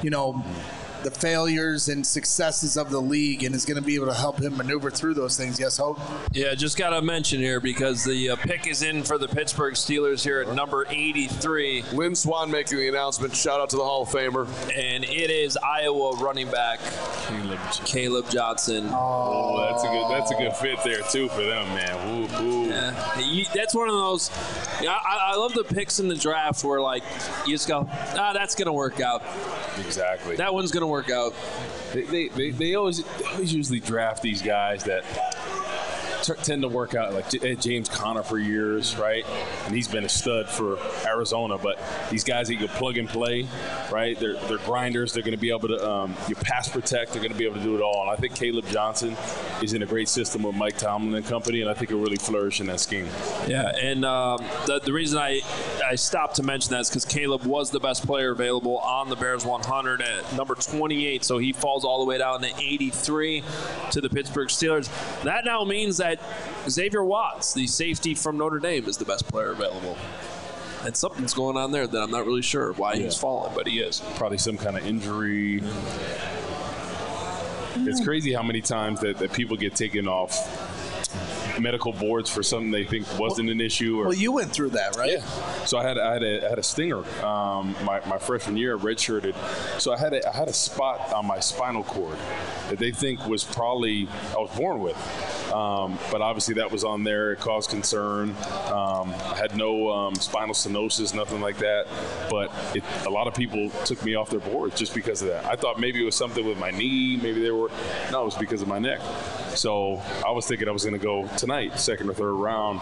the failures and successes of the league and is going to be able to help him maneuver through those things. Yes, Hope? Yeah, just got to mention here because the pick is in for the Pittsburgh Steelers here at number 83. Lynn Swan making the announcement. Shout out to the Hall of Famer. And it is Iowa running back Caleb Johnson. Oh, that's a good fit there too for them, man. Woo. Yeah, that's one of those. I love the picks in the draft where you just go, that's going to work out. Exactly. That one's going to work out. They always usually draft these guys that tend to work out, like James Conner for years, right? And he's been a stud for Arizona. But these guys that you can plug and play, right? They're grinders. They're going to be able to you pass protect. They're going to be able to do it all. And I think Caleb Johnson is in a great system with Mike Tomlin and company, and I think he'll really flourish in that scheme. Yeah, and the reason I stopped to mention that is because Caleb was the best player available on the Bears 100 at number 28, so he falls all the way down to 83 to the Pittsburgh Steelers. That now means that Xavier Watts, the safety from Notre Dame, is the best player available. And something's going on there that I'm not really sure why he's falling, but he is. Probably some kind of injury. It's crazy how many times that people get taken off medical boards for something they think wasn't an issue. Well, you went through that, right? Yeah. So I had a stinger my freshman year, redshirted. So I had a spot on my spinal cord that they think was probably I was born with. But obviously that was on there. It caused concern. I had no spinal stenosis, nothing like that. But a lot of people took me off their boards just because of that. I thought maybe it was something with my knee. No, it was because of my neck. So I was thinking I was going to go tonight, second or third round.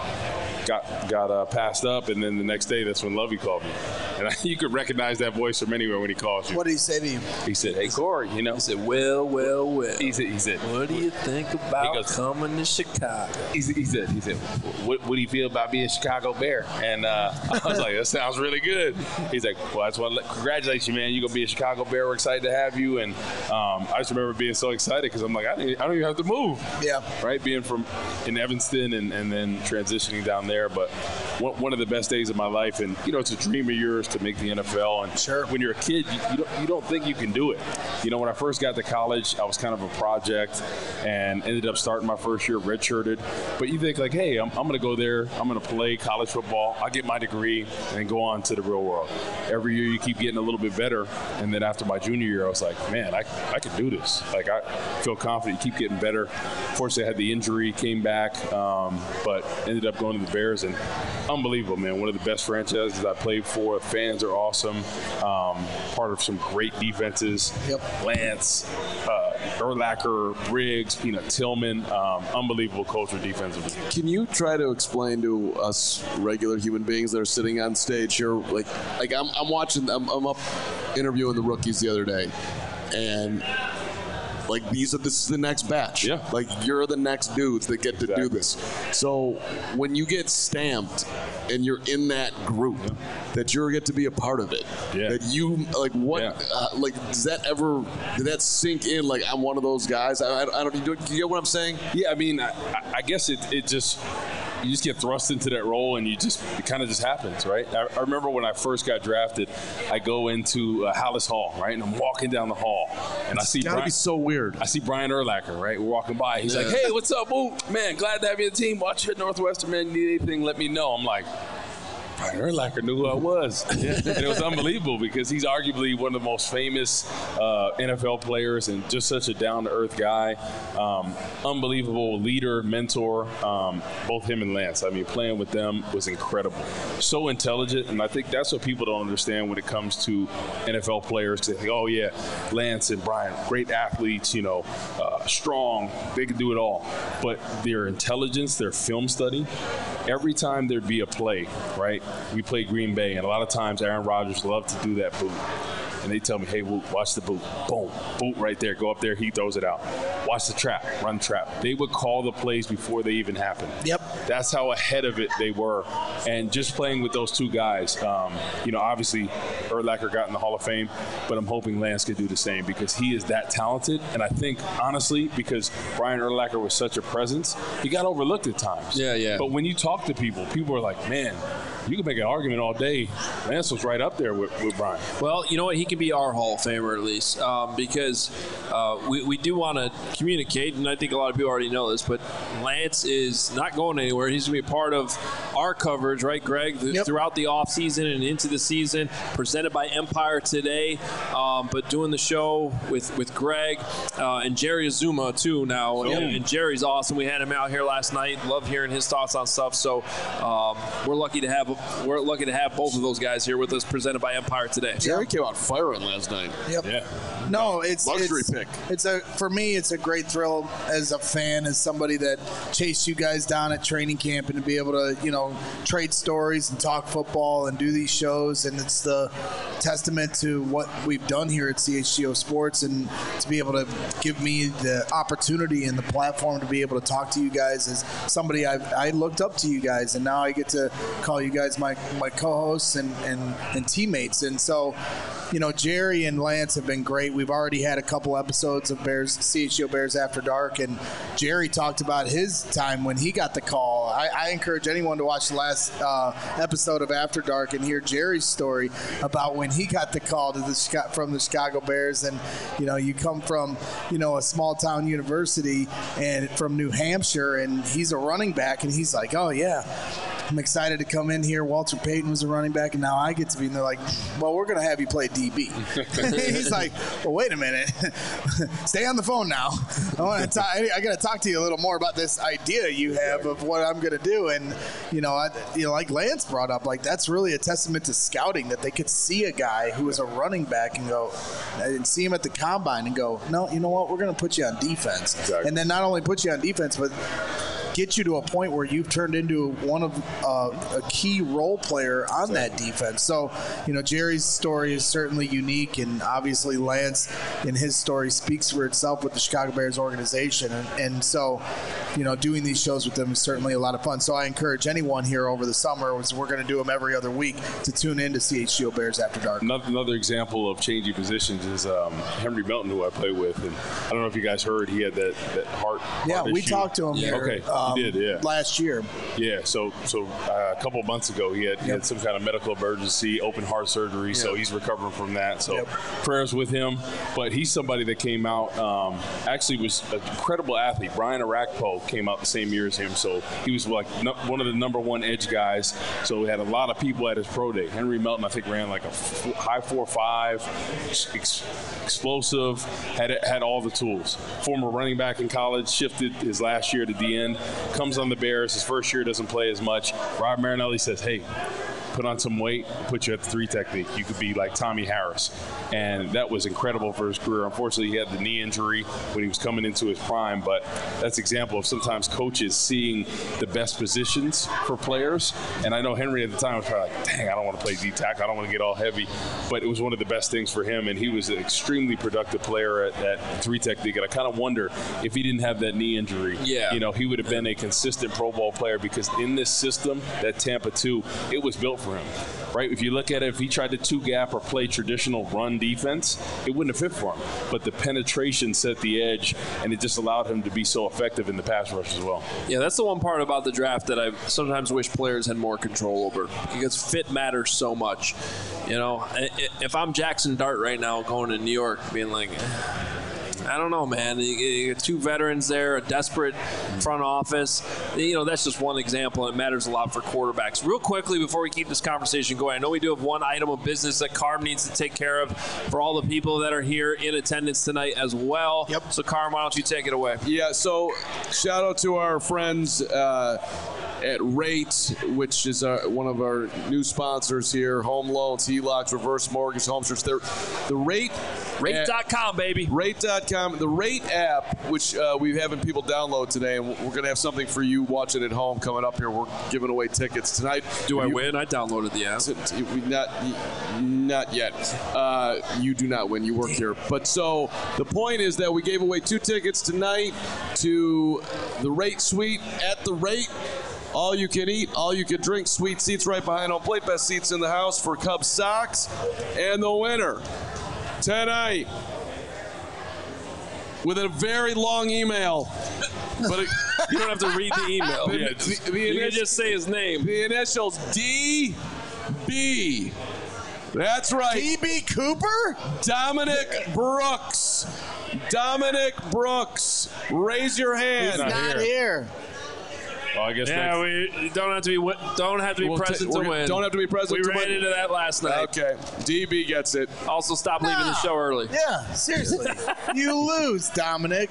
Got passed up, and then the next day, that's when Lovey called me. And you could recognize that voice from anywhere when he calls you. What did he say to you? He said, "Hey, Corey, He said, well. He said, what do you think about coming to Chicago? He said, what do you feel about being a Chicago Bear? And I was like, that sounds really good. He's like, well, I just want to congratulate you, man. You're going to be a Chicago Bear. We're excited to have you. And I just remember being so excited because I'm like, I don't even have to move. Yeah. Right? Being in Evanston and then transitioning down there. But one of the best days of my life. And, it's a dream of yours to make the NFL. And sure, when you're a kid, you don't think you can do it. When I first got to college, I was kind of a project and ended up starting my first year redshirted. But you think hey, I'm going to go there. I'm going to play college football. I'll get my degree and go on to the real world. Every year you keep getting a little bit better. And then after my junior year, I was like, man, I can do this. I feel confident. You keep getting better. Fortunately, I had the injury, came back, but ended up going to the Bears. And unbelievable, man. One of the best franchises I played for. Fans are awesome. Part of some great defenses. Yep. Lance, Urlacher, Briggs, Tillman. Unbelievable culture defensively. Can you try to explain to us regular human beings that are sitting on stage here, like I'm watching, I'm up interviewing the rookies the other day, and this is the next batch. Yeah. You're the next dudes that get to do this. So when you get stamped and you're in that group, that you get to be a part of it. Yeah. That you does did that sink in? I'm one of those guys. I don't. Do you get what I'm saying? Yeah. I mean, I guess it just. You just get thrust into that role, and it kind of just happens, right? I remember when I first got drafted, I go into Hallis Hall, right? And I'm walking down the hall, and I see Brian. It's gotta be so weird. I see Brian Urlacher, right? We're walking by. He's like, hey, what's up, boo? Man, glad to have you on the team. Watch you at Northwestern, man. You need anything, let me know. I'm like, Brian Urlacher knew who I was. And it was unbelievable because he's arguably one of the most famous NFL players and just such a down-to-earth guy. Unbelievable leader, mentor, both him and Lance. I mean, playing with them was incredible. So intelligent, and I think that's what people don't understand when it comes to NFL players. They think, oh, yeah, Lance and Brian, great athletes, strong, they can do it all. But their intelligence, their film study, every time there'd be a play, right? We played Green Bay, and a lot of times Aaron Rodgers loved to do that boot. And they tell me, hey, watch the boot. Boom, boot right there. Go up there, he throws it out. Watch the trap, run trap. They would call the plays before they even happened. Yep. That's how ahead of it they were. And just playing with those two guys, obviously Urlacher got in the Hall of Fame, but I'm hoping Lance could do the same because he is that talented. And I think, honestly, because Brian Urlacher was such a presence, he got overlooked at times. Yeah. But when you talk to people are like, man, you can make an argument all day. Lance was right up there with Brian. Well, you know what? He can be our Hall of Famer at least because we do want to communicate, and I think a lot of people already know this, but Lance is not going anywhere. He's going to be a part of our coverage, right, Greg, throughout the offseason and into the season, presented by Empire Today, but doing the show with Greg and Jerry Azuma, too, now. And Jerry's awesome. We had him out here last night. Love hearing his thoughts on stuff. So we're lucky to have both of those guys here with us, presented by Empire Today. Jerry came out firing last night. Yep. Yeah. No, it's luxury pick. For me, it's a great thrill as a fan, as somebody that chased you guys down at training camp, and to be able to, trade stories and talk football and do these shows. And it's the testament to what we've done here at CHGO Sports, and to be able to give me the opportunity and the platform to be able to talk to you guys as somebody I looked up to you guys, and now I get to call you guys my co-hosts and teammates. And so, Jerry and Lance have been great. We've already had a couple episodes of CHGO Bears After Dark, and Jerry talked about his time when he got the call. I encourage anyone to watch the last episode of After Dark and hear Jerry's story about when he got the call from the Chicago Bears. And, you come from, a small town university and from New Hampshire, and he's a running back, and he's like, oh, yeah, I'm excited to come in here. Walter Payton was a running back, and now I get to be. And they're like, well, we're going to have you play DB. He's like, well, wait a minute. Stay on the phone now. I got to talk to you a little more about this idea you have of what I'm going to do. And, like Lance brought up, like that's really a testament to scouting, that they could see a guy who was a running back and see him at the combine and go, no, you know what? We're going to put you on defense. Exactly. And then not only put you on defense, but get you to a point where you've turned into one of a key role player on that defense. So, Jerry's story is certainly unique, and obviously Lance in his story speaks for itself with the Chicago Bears organization. And so, doing these shows with them is certainly a lot of fun. So I encourage anyone here over the summer, we're going to do them every other week, to tune in to CHGO Bears After Dark. Another example of changing positions is Henry Melton, who I play with. And I don't know if you guys heard, he had that heart we issue. talked to him here. Okay. He did, yeah. Last year. Yeah, so a couple of months ago, he had some kind of medical emergency, open heart surgery, so he's recovering from that. So prayers with him. But he's somebody that came out, actually was an incredible athlete. Brian Arakpo came out the same year as him, so he was like one of the number one edge guys. So we had a lot of people at his pro day. Henry Melton, I think, ran like a high 4.5, explosive, had all the tools. Former running back in college, shifted his last year to the end. Comes on the Bears. His first year doesn't play as much. Rob Marinelli says, hey, put on some weight, put you at the 3 technique. You could be like Tommy Harris. And that was incredible for his career. Unfortunately, he had the knee injury when he was coming into his prime, but that's an example of sometimes coaches seeing the best positions for players. And I know Henry at the time was probably like, dang, I don't want to play D-tackle. I don't want to get all heavy. But it was one of the best things for him, and he was an extremely productive player at that 3 technique. And I kind of wonder if he didn't have that knee injury, he would have been a consistent Pro Bowl player, because in this system, that Tampa 2, it was built for him, right? If you look at it, if he tried to 2-gap or play traditional run defense, it wouldn't have fit for him. But the penetration set the edge, and it just allowed him to be so effective in the pass rush as well. Yeah, that's the one part about the draft that I sometimes wish players had more control over, because fit matters so much. If I'm Jackson Dart right now going to New York, being like, I don't know, man. You got two veterans there, a desperate front office. That's just one example. It matters a lot for quarterbacks. Real quickly, before we keep this conversation going, I know we do have one item of business that Carm needs to take care of for all the people that are here in attendance tonight as well. Yep. So, Carm, why don't you take it away? Yeah, so shout out to our friends at Rate, which is one of our new sponsors here. Home loans, HELOCs, reverse mortgage, home search. The Rate. Rate.com, baby. Rate.com. The Rate app, which we're having people download today, and we're going to have something for you watching at home coming up here. We're giving away tickets tonight. Do I win? I downloaded the app. Not yet. You do not win. You work here. But so the point is that we gave away 2 tickets tonight to the Rate Suite at the Rate. All you can eat, all you can drink, sweet seats right behind home plate, best seats in the house for Cubs socks. And the winner tonight, with a very long email. But you don't have to read the email. You can just say his name. The initials DB. That's right. DB Cooper? Dominic Brooks. Raise your hand. He's not here. Well, I guess we don't have to be present to win. Don't have to be present to win. We ran into that last night. Okay. DB gets it. Also, stop leaving the show early. Yeah, seriously. You lose, Dominic.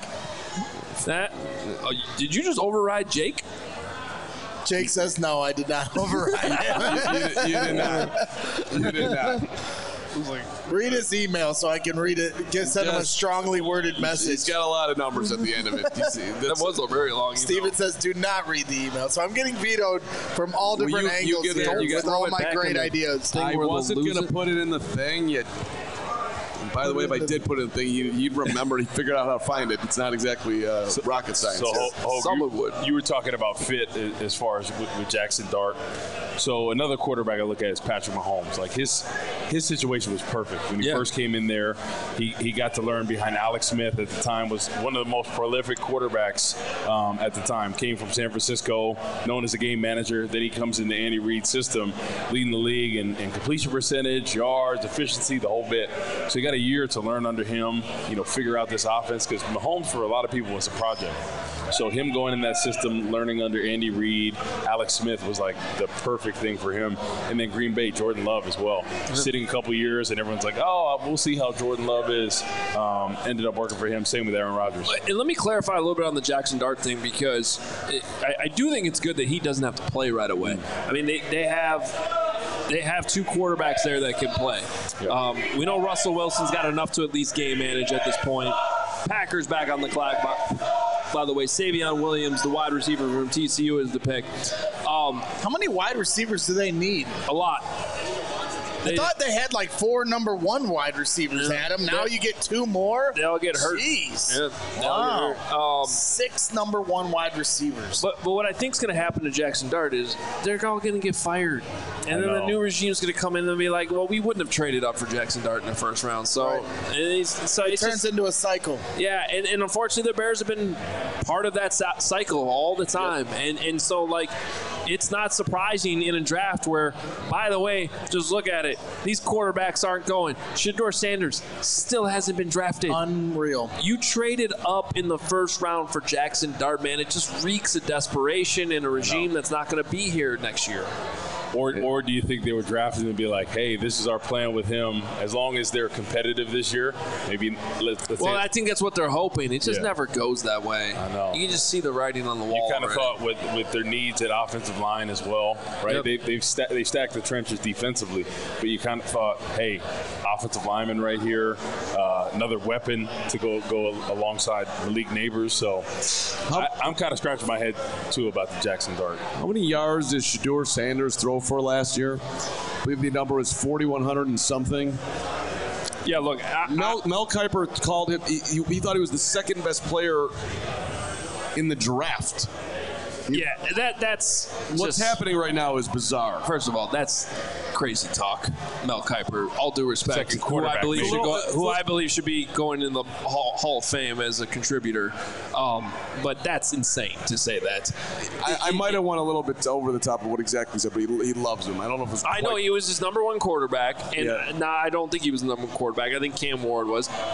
Did you just override Jake? Jake says no, I did not override him. You did not. Read his email so I can read it. Send him a strongly worded message. He's got a lot of numbers at the end of it. You see, that was a very long email. Steven says, do not read the email. So I'm getting vetoed from all different angles here with all my great ideas. I wasn't going to put it in the thing yet. By the way, if I did put it in the thing, you'd remember. He figured out how to find it. It's not exactly rocket science. So, someone would. You were talking about fit as far as with Jackson Dart. So another quarterback I look at is Patrick Mahomes. Like his situation was perfect when he first came in there. He got to learn behind Alex Smith at the time, was one of the most prolific quarterbacks at the time. Came from San Francisco, known as a game manager. Then he comes in the Andy Reid system, leading the league in completion percentage, yards, efficiency, the whole bit. So he got a year to learn under him, figure out this offense, because Mahomes for a lot of people was a project. So him going in that system, learning under Andy Reid, Alex Smith was like the perfect thing for him. And then Green Bay, Jordan Love as well. Sitting a couple years and everyone's like, oh, we'll see how Jordan Love is. Ended up working for him. Same with Aaron Rodgers. And let me clarify a little bit on the Jackson Dart thing, because I do think it's good that he doesn't have to play right away. I mean, they have 2 quarterbacks there that can play. Yep. We know Russell Wilson's got enough to at least game manage at this point. Packers back on the clock. By the way, Savion Williams, the wide receiver from TCU, is the pick. How many wide receivers do they need? A lot. I thought they had like 4 number 1 wide receivers, Adam. Now you get 2 more? They'll get hurt. Jeez. Yeah, wow. 6 number 1 wide receivers. But what I think is going to happen to Jackson Dart is they're all going to get fired. And then the new regime is going to come in and be like, well, we wouldn't have traded up for Jackson Dart in the first round. So, it turns into a cycle. Yeah, and unfortunately the Bears have been part of that cycle all the time. Yep. And so, like, it's not surprising in a draft where, by the way, just look at it. These quarterbacks aren't going. Shedeur Sanders still hasn't been drafted. Unreal. You traded up in the first round for Jackson Dart, man. It just reeks of desperation in a regime that's not going to be here next year. Or do you think they were drafted and be like, hey, this is our plan with him. As long as they're competitive this year, maybe let's Well, I think that's what they're hoping. It just never goes that way. I know. You can just see the writing on the wall. You kind of thought with their needs at offensive line as well, right? Yep. They stacked the trenches defensively, but you kind of thought, hey, offensive lineman right here, another weapon to go alongside Malik Neighbors. So I'm kind of scratching my head, too, about the Jackson Dart. How many yards did Shedeur Sanders throw for last year? I believe the number was 4,100 and something. Yeah, look, Mel Kiper called him. He thought he was the second best player in the draft. Yeah, that's what's happening right now is bizarre. First of all, that's crazy talk. Mel Kiper, all due respect, who I believe should be going in the Hall of Fame as a contributor. But that's insane to say that. I might have went a little bit over the top of what exactly he said, but he loves him. I don't know if it's. I know he was his number 1 quarterback, and I don't think he was the number 1 quarterback. I think Cam Ward was.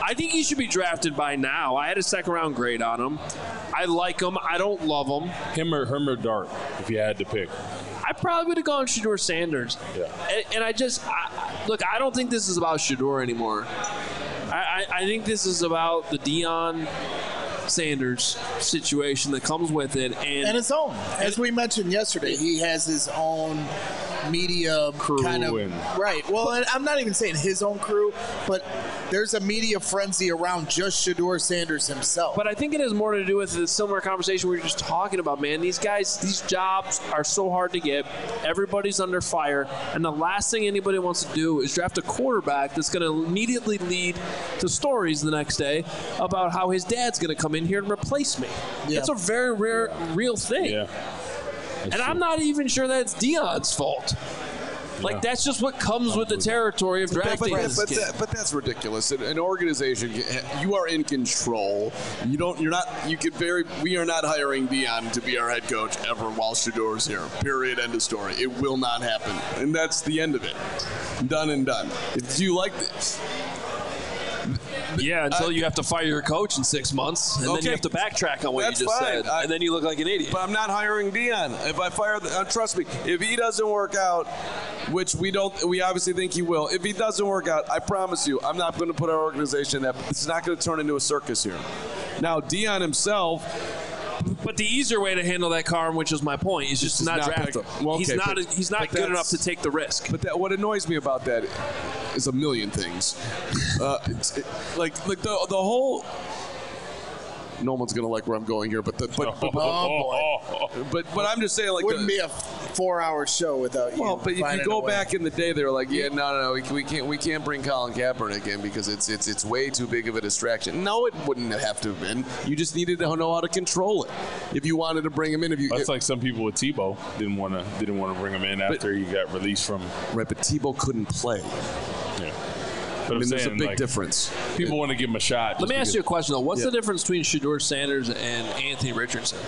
I think he should be drafted by now. I had a second-round grade on him. I like him. I don't love him. Him or Dart, if you had to pick. I probably would have gone Shedeur Sanders. Yeah. And I don't think this is about Shedeur anymore. I think this is about the Deion Sanders situation that comes with it. And his own. As we mentioned yesterday, he has his own media crew kind of right. Well, and I'm not even saying his own crew, but there's a media frenzy around just Shedeur Sanders himself. But I think it has more to do with the similar conversation we were just talking about, man. These guys, these jobs are so hard to get. Everybody's under fire, and the last thing anybody wants to do is draft a quarterback that's going to immediately lead to stories the next day about how his dad's going to come in here and replace me. Yeah. That's a very real thing. Yeah. And I'm not even sure that's Deion's fault. Like, that's just what comes with the territory of drafting this kid. But that's ridiculous. An organization, you are in control. We are not hiring Deion to be our head coach ever while Shedeur's here. Period. End of story. It will not happen. And that's the end of it. Done and done. Do you like this? Yeah, until you have to fire your coach in 6 months, and then you have to backtrack on what you just said, and then you look like an idiot. But I'm not hiring Deion. If I fire, trust me, if he doesn't work out, which we obviously think he will. If he doesn't work out, I promise you, I'm not going to put our organization that it's not going to turn into a circus here. Now, Deion himself. But the easier way to handle that, Carm, which is my point, is just not draft him. Well, okay, he's not good enough to take the risk. But what annoys me about that is a million things. Like the whole. No one's gonna like where I'm going here, but I'm just saying, like, wouldn't be a 4-hour show without you. Well, but if you go back in the day, they were like, no, we can't bring Colin Kaepernick in because it's way too big of a distraction. No, it wouldn't have to have been. You just needed to know how to control it. If you wanted to bring him in, that's like some people with Tebow didn't want to bring him in after he got released from. Right, but Tebow couldn't play. Yeah. But there's a big difference. People want to give him a shot. Let me ask you a question, though. What's the difference between Shedeur Sanders and Anthony Richardson?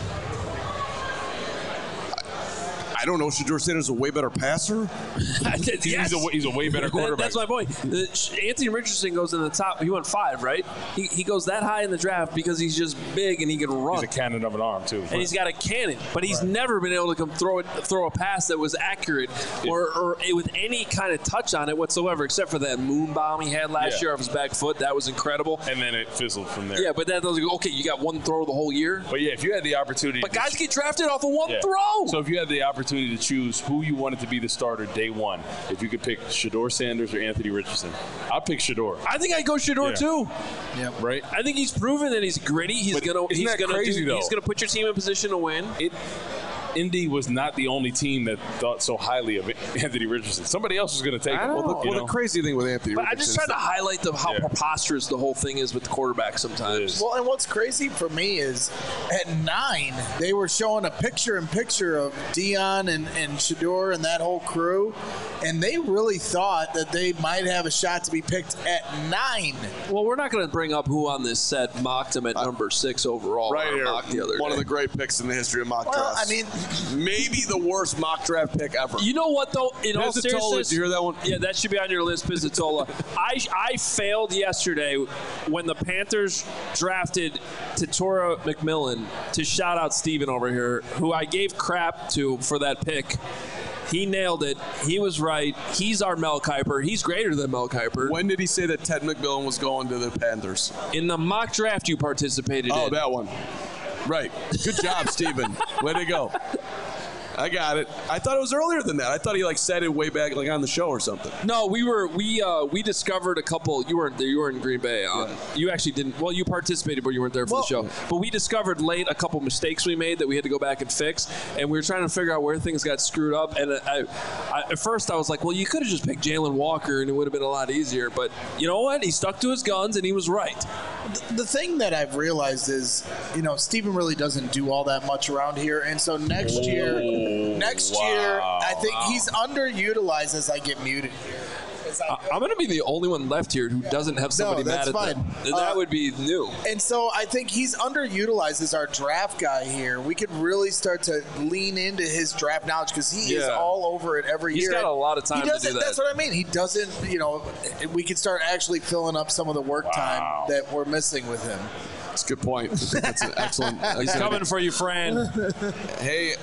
I don't know. Shedeur Sanders is a way better passer. Yes. He's a way better quarterback. That's my point. Anthony Richardson goes in the top. He went 5, right? He goes that high in the draft because he's just big and he can run. He's a cannon of an arm, too. And he's got a cannon. But he's never been able to come throw a pass that was accurate or with any kind of touch on it whatsoever, except for that moon bomb he had last year off his back foot. That was incredible. And then it fizzled from there. Yeah, but that doesn't go, okay, you got one throw the whole year. But, yeah, if you had the opportunity. But guys get drafted off of one throw. So if you had the opportunity to choose who you wanted to be the starter day one, if you could pick Shedeur Sanders or Anthony Richardson, I'd pick Shedeur. I think I'd go Shedeur too. Yeah, right. I think he's proven that he's gritty. He's gonna put your team in position to win. Indy was not the only team that thought so highly of Anthony Richardson. Somebody else was going to take him. Well, the crazy thing with Anthony Richardson. I'm just trying to highlight how preposterous the whole thing is with the quarterback sometimes. Well, and what's crazy for me is at 9, they were showing a picture-in-picture of Deion and Shedeur and that whole crew, and they really thought that they might have a shot to be picked at 9. Well, we're not going to bring up who on this set mocked him at number 6 overall. Right here, one of the great picks in the history of mock drafts. I mean, maybe the worst mock draft pick ever. You know what, though? In all seriousness, did you hear that one? Yeah, that should be on your list, Pizzatola. I failed yesterday when the Panthers drafted Tatora McMillan to shout out Steven over here, who I gave crap to for that pick. He nailed it. He was right. He's our Mel Kiper. He's greater than Mel Kiper. When did he say that Ted McMillan was going to the Panthers? In the mock draft you participated in. Oh, that one. Right. Good job, Steven. Way to go. I got it. I thought it was earlier than that. I thought he said it way back on the show or something. No, we discovered a couple. You weren't there. You were in Green Bay. You actually didn't. Well, you participated, but you weren't there for the show. But we discovered late a couple mistakes we made that we had to go back and fix, and we were trying to figure out where things got screwed up. And at first I was like, well, you could have just picked Jalen Walker, and it would have been a lot easier. But you know what? He stuck to his guns, and he was right. The thing that I've realized is, Steven really doesn't do all that much around here, and so next year, I think he's underutilized as I get muted here. I'm going to be the only one left here who doesn't have somebody mad at them. That would be new. And so I think he's underutilized as our draft guy here. We could really start to lean into his draft knowledge because he is all over it every year. He's got a lot of time to do that. That's what I mean. He doesn't, we could start actually filling up some of the work time that we're missing with him. That's a good point. That's an excellent. He's coming for you, Fran. Hey,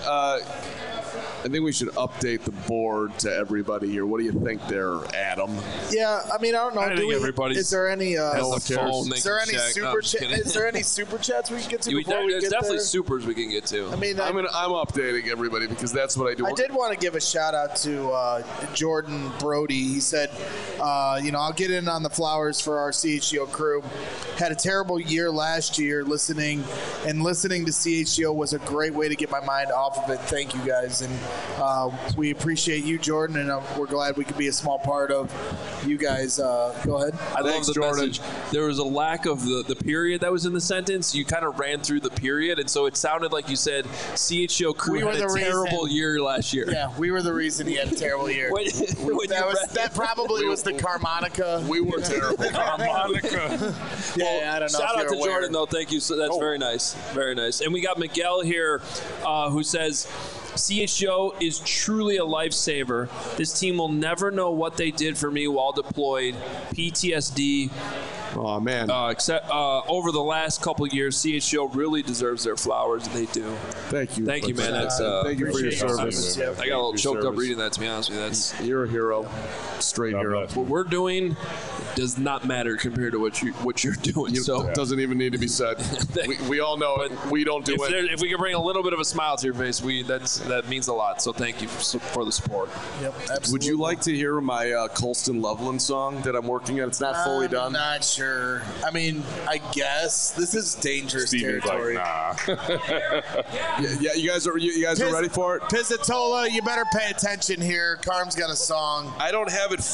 I think we should update the board to everybody here. What do you think there, Adam? Yeah, I mean, I don't know. I think everybody's is there any? Is there any super chats we can get to? There's definitely supers we can get to. I mean, I'm updating everybody because that's what I do. I did want to give a shout out to Jordan Brody. He said, I'll get in on the flowers for our CHGO crew. Had a terrible year last year. Listening to CHGO was a great way to get my mind off of it. Thank you guys, and we appreciate you, Jordan, and we're glad we could be a small part of you guys. Go ahead. I love the message. There was a lack of the period that was in the sentence. You kind of ran through the period, and so it sounded like you said CHGO crew had a terrible year last year. Yeah, we were the reason he had a terrible year. That probably was the Carmonica. We were terrible. Carmonica. Yeah, I don't know. Shout out to Jordan, though. Thank you. So that's very nice. Very nice. And we got Miguel here who says, CHGO is truly a lifesaver. This team will never know what they did for me while deployed. PTSD. Oh, man. Except over the last couple of years, CHGO really deserves their flowers, and they do. Thank you. Thank you, man. Thank you for your service. I got a little choked up reading that, to be honest with you. You're a hero. Straight hero. What we're doing does not matter compared to what you're doing. It doesn't even need to be said. we all know it. We don't do it. If we can bring a little bit of a smile to your face, that means a lot. So thank you for the support. Yep, absolutely. Would you like to hear my Colston Loveland song that I'm working on? It's not fully done. I'm not sure. I mean, I guess this is dangerous territory. Like, nah. yeah, you guys are ready for it? Pizzatola, you better pay attention here. Carm's got a song. I don't have it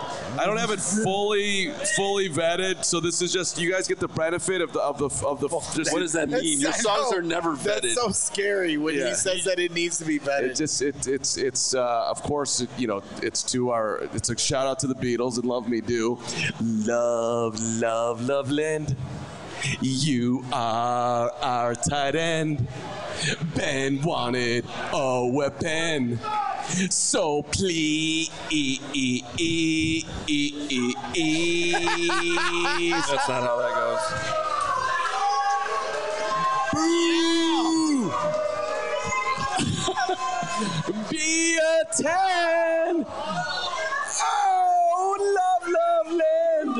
fully vetted, so this is just you guys get the benefit of the. What does that mean? Your songs are never vetted. That's so scary when he says that it needs to be vetted. It's of course it's a shout out to the Beatles and Love Me Do. Love Loveland. You are our tight end. Ben wanted a weapon. So please. That's not how that goes. Be a 10. Oh, Loveland.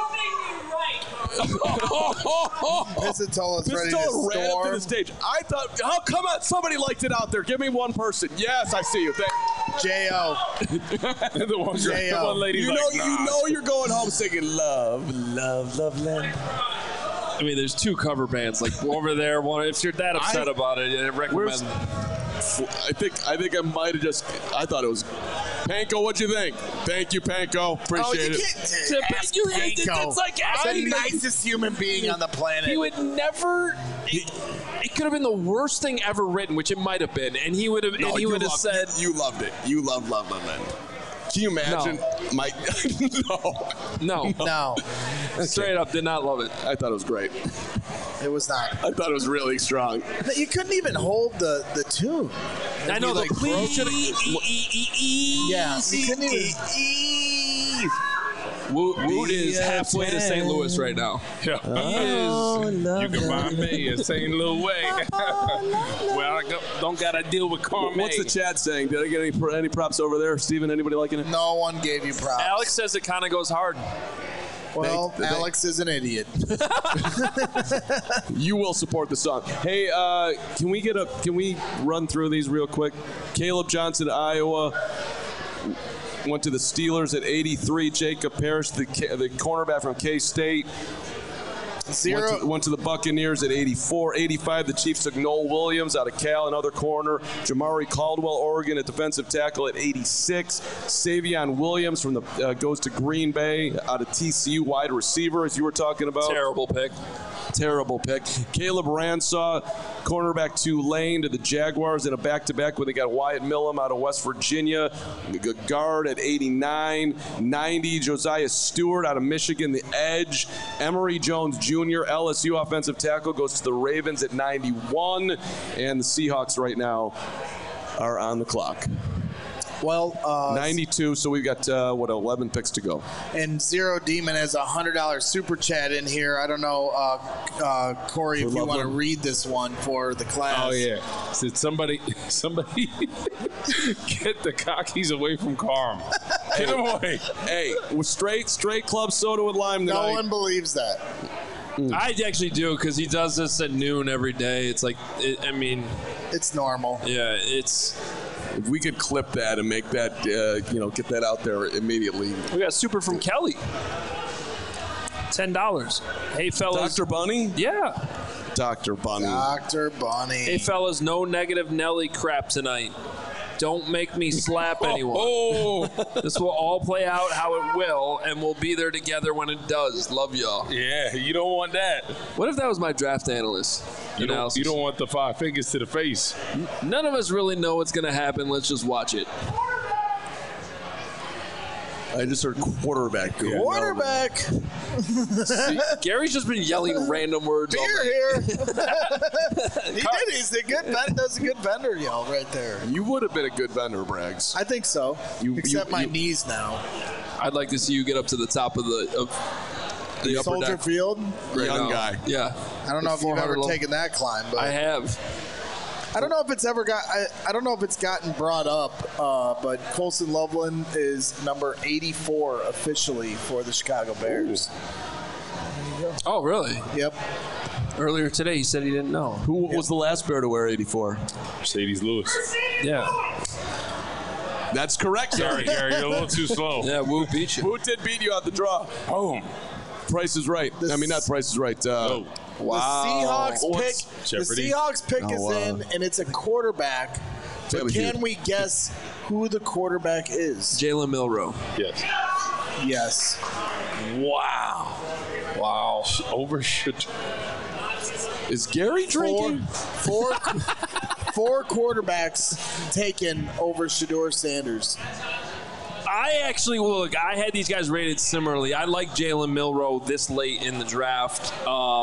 Pizzatola's ready to storm. Ran up to the stage. I thought, come on, somebody liked it out there. Give me one person. Yes, I see you. J.O. the one lady. You know you're going home singing Loveland. I mean, there's two cover bands like over there. One, if you're that upset about it, I recommend. I think I might have just. I thought it was. Panko, what'd you think? Thank you, Panko. Appreciate it. It's like the nicest human being on the planet. He would never. It could have been the worst thing ever written, which it might have been, and he would have. No, and he would have said, "You loved it. You loved Loveland." Can you imagine? No. Straight up, did not love it. I thought it was great. It was not. I thought it was really strong. You couldn't even hold the tune. I know, the please should have. Yeah, you couldn't even. Wood is halfway to St. Louis right now. Yeah. You can find me in St. Louis. Well, I don't got to deal with Carme. What's the chat saying? Did I get any props over there? Steven, anybody liking it? No one gave you props. Alex says it kind of goes hard. Well, Alex is an idiot. You will support the song. Hey, can we run through these real quick? Caleb Johnson, Iowa. Went to the Steelers at 83. Jacob Parrish, the cornerback from K-State. 0. Went to the Buccaneers at 84. 85, the Chiefs took Noel Williams out of Cal, another corner. Jamari Caldwell, Oregon, at defensive tackle at 86. Savion Williams from the goes to Green Bay out of TCU, wide receiver, as you were talking about. Terrible pick. Caleb Ransaw, cornerback Tulane, to the Jaguars in a back-to-back when they got Wyatt Millham out of West Virginia. Guard at 89. 90, Josiah Stewart out of Michigan, the edge. Emory Jones Jr., LSU offensive tackle, goes to the Ravens at 91. And the Seahawks right now are on the clock. Well, 92, so we've got, 11 picks to go. And Zero Demon has a $100 super chat in here. I don't know, Corey, if you want to read this one for the class. Oh, yeah. Said somebody get the cockies away from Carm. Get them away. Hey, straight club soda with lime tonight. No one believes that. I actually do, because he does this at noon every day. It's like, it's normal. Yeah, it's... If we could clip that and make that, get that out there immediately. We got super from Kelly. $10. Hey, fellas. Dr. Bunny? Yeah. Dr. Bunny. Dr. Bunny. Hey, fellas, no negative Nelly crap tonight. Don't make me slap anyone. This will all play out how it will, and we'll be there together when it does. Love y'all. Yeah, you don't want that. What if that was my draft analyst? You don't want the 5 fingers to the face. None of us really know what's going to happen. Let's just watch it. I just heard quarterback. Quarterback. See, Gary's just been yelling random words. Here. He did. He's a good. That's a good vendor yell right there. You would have been a good vendor, Braggs. I think so. Except my knees now. I'd like to see you get up to the top of the upper Soldier deck. Field. Young guy. Yeah. I don't know if you've ever taken that climb, but I have. I don't know if it's ever got. I don't know if it's gotten brought up, but Colson Loveland is number 84 officially for the Chicago Bears. Oh, really? Yep. Earlier today, he said he didn't know. Who was the last Bear to wear 84? Mercedes Lewis. Yeah. That's correct. Sorry, Gary, you're a little too slow. Yeah, Woo beat you. Who did beat you out the draw? Boom. Price is Right. Not Price is Right. Oh. Wow. The Seahawks pick is in, and it's a quarterback. But can we guess who the quarterback is? Jalen Milroe. Yes. Yes. Wow. Overshoot. Is Gary drinking? Four quarterbacks taken over Shedeur Sanders. I actually look. I had these guys rated similarly. I like Jalen Milroe this late in the draft.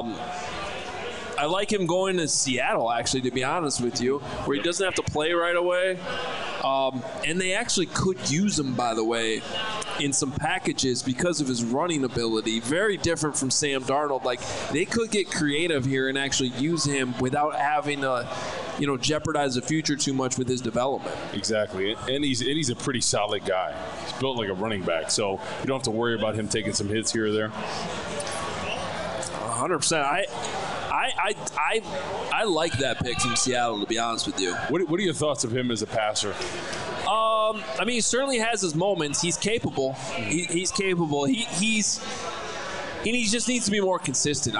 I like him going to Seattle, actually, to be honest with you, where he doesn't have to play right away. And they actually could use him, by the way, in some packages because of his running ability. Very different from Sam Darnold. Like, they could get creative here and actually use him without having to, jeopardize the future too much with his development. Exactly. And he's a pretty solid guy. He's built like a running back, so you don't have to worry about him taking some hits here or there. 100%. I like that pick from Seattle, to be honest with you. What are your thoughts of him as a passer? He certainly has his moments. He's capable. He's capable. He just needs to be more consistent.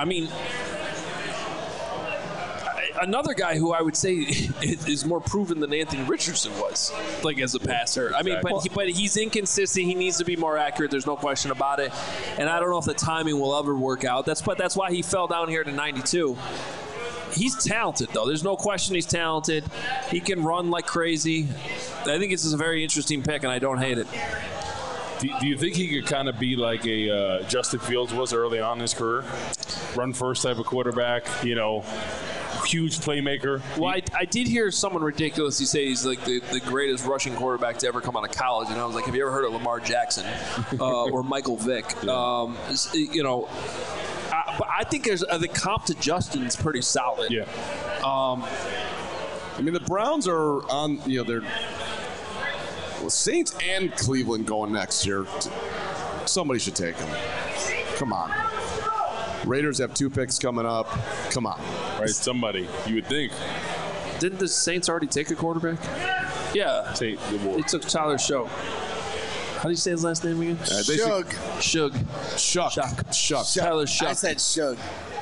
Another guy who I would say is more proven than Anthony Richardson was, like as a passer. But he's inconsistent. He needs to be more accurate. There's no question about it. And I don't know if the timing will ever work out. That's why he fell down here to 92. He's talented, though. There's no question he's talented. He can run like crazy. I think this is a very interesting pick, and I don't hate it. Do you think he could kind of be like a Justin Fields was early on in his career? Run first type of quarterback, huge playmaker. Well, I did hear someone ridiculously say he's like the greatest rushing quarterback to ever come out of college, and I was like, have you ever heard of Lamar Jackson or Michael Vick? Yeah. But I think the comp to Justin's pretty solid. Yeah. The Browns are on. They're Saints and Cleveland going next year. Somebody should take them. Come on. Raiders have 2 picks coming up. Come on. Right, somebody. You would think. Didn't the Saints already take a quarterback? Yeah. They took Tyler Shough. How do you say his last name again? Shug. Shug. Shuck. Tyler Shuck. I said Shug.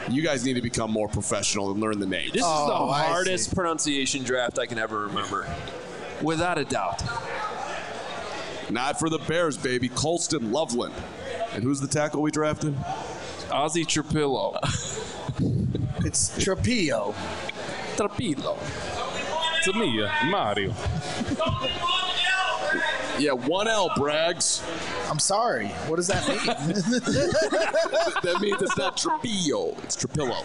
You guys need to become more professional and learn the name. This is the hardest pronunciation draft I can ever remember. Without a doubt. Not for the Bears, baby. Colston Loveland. And who's the tackle we drafted? Ozzy Trapillo. It's Trapillo. Trapillo. To me, Mario. Yeah, 1L, Braggs. I'm sorry. What does that mean? That means it's not Trapillo. It's Trapillo.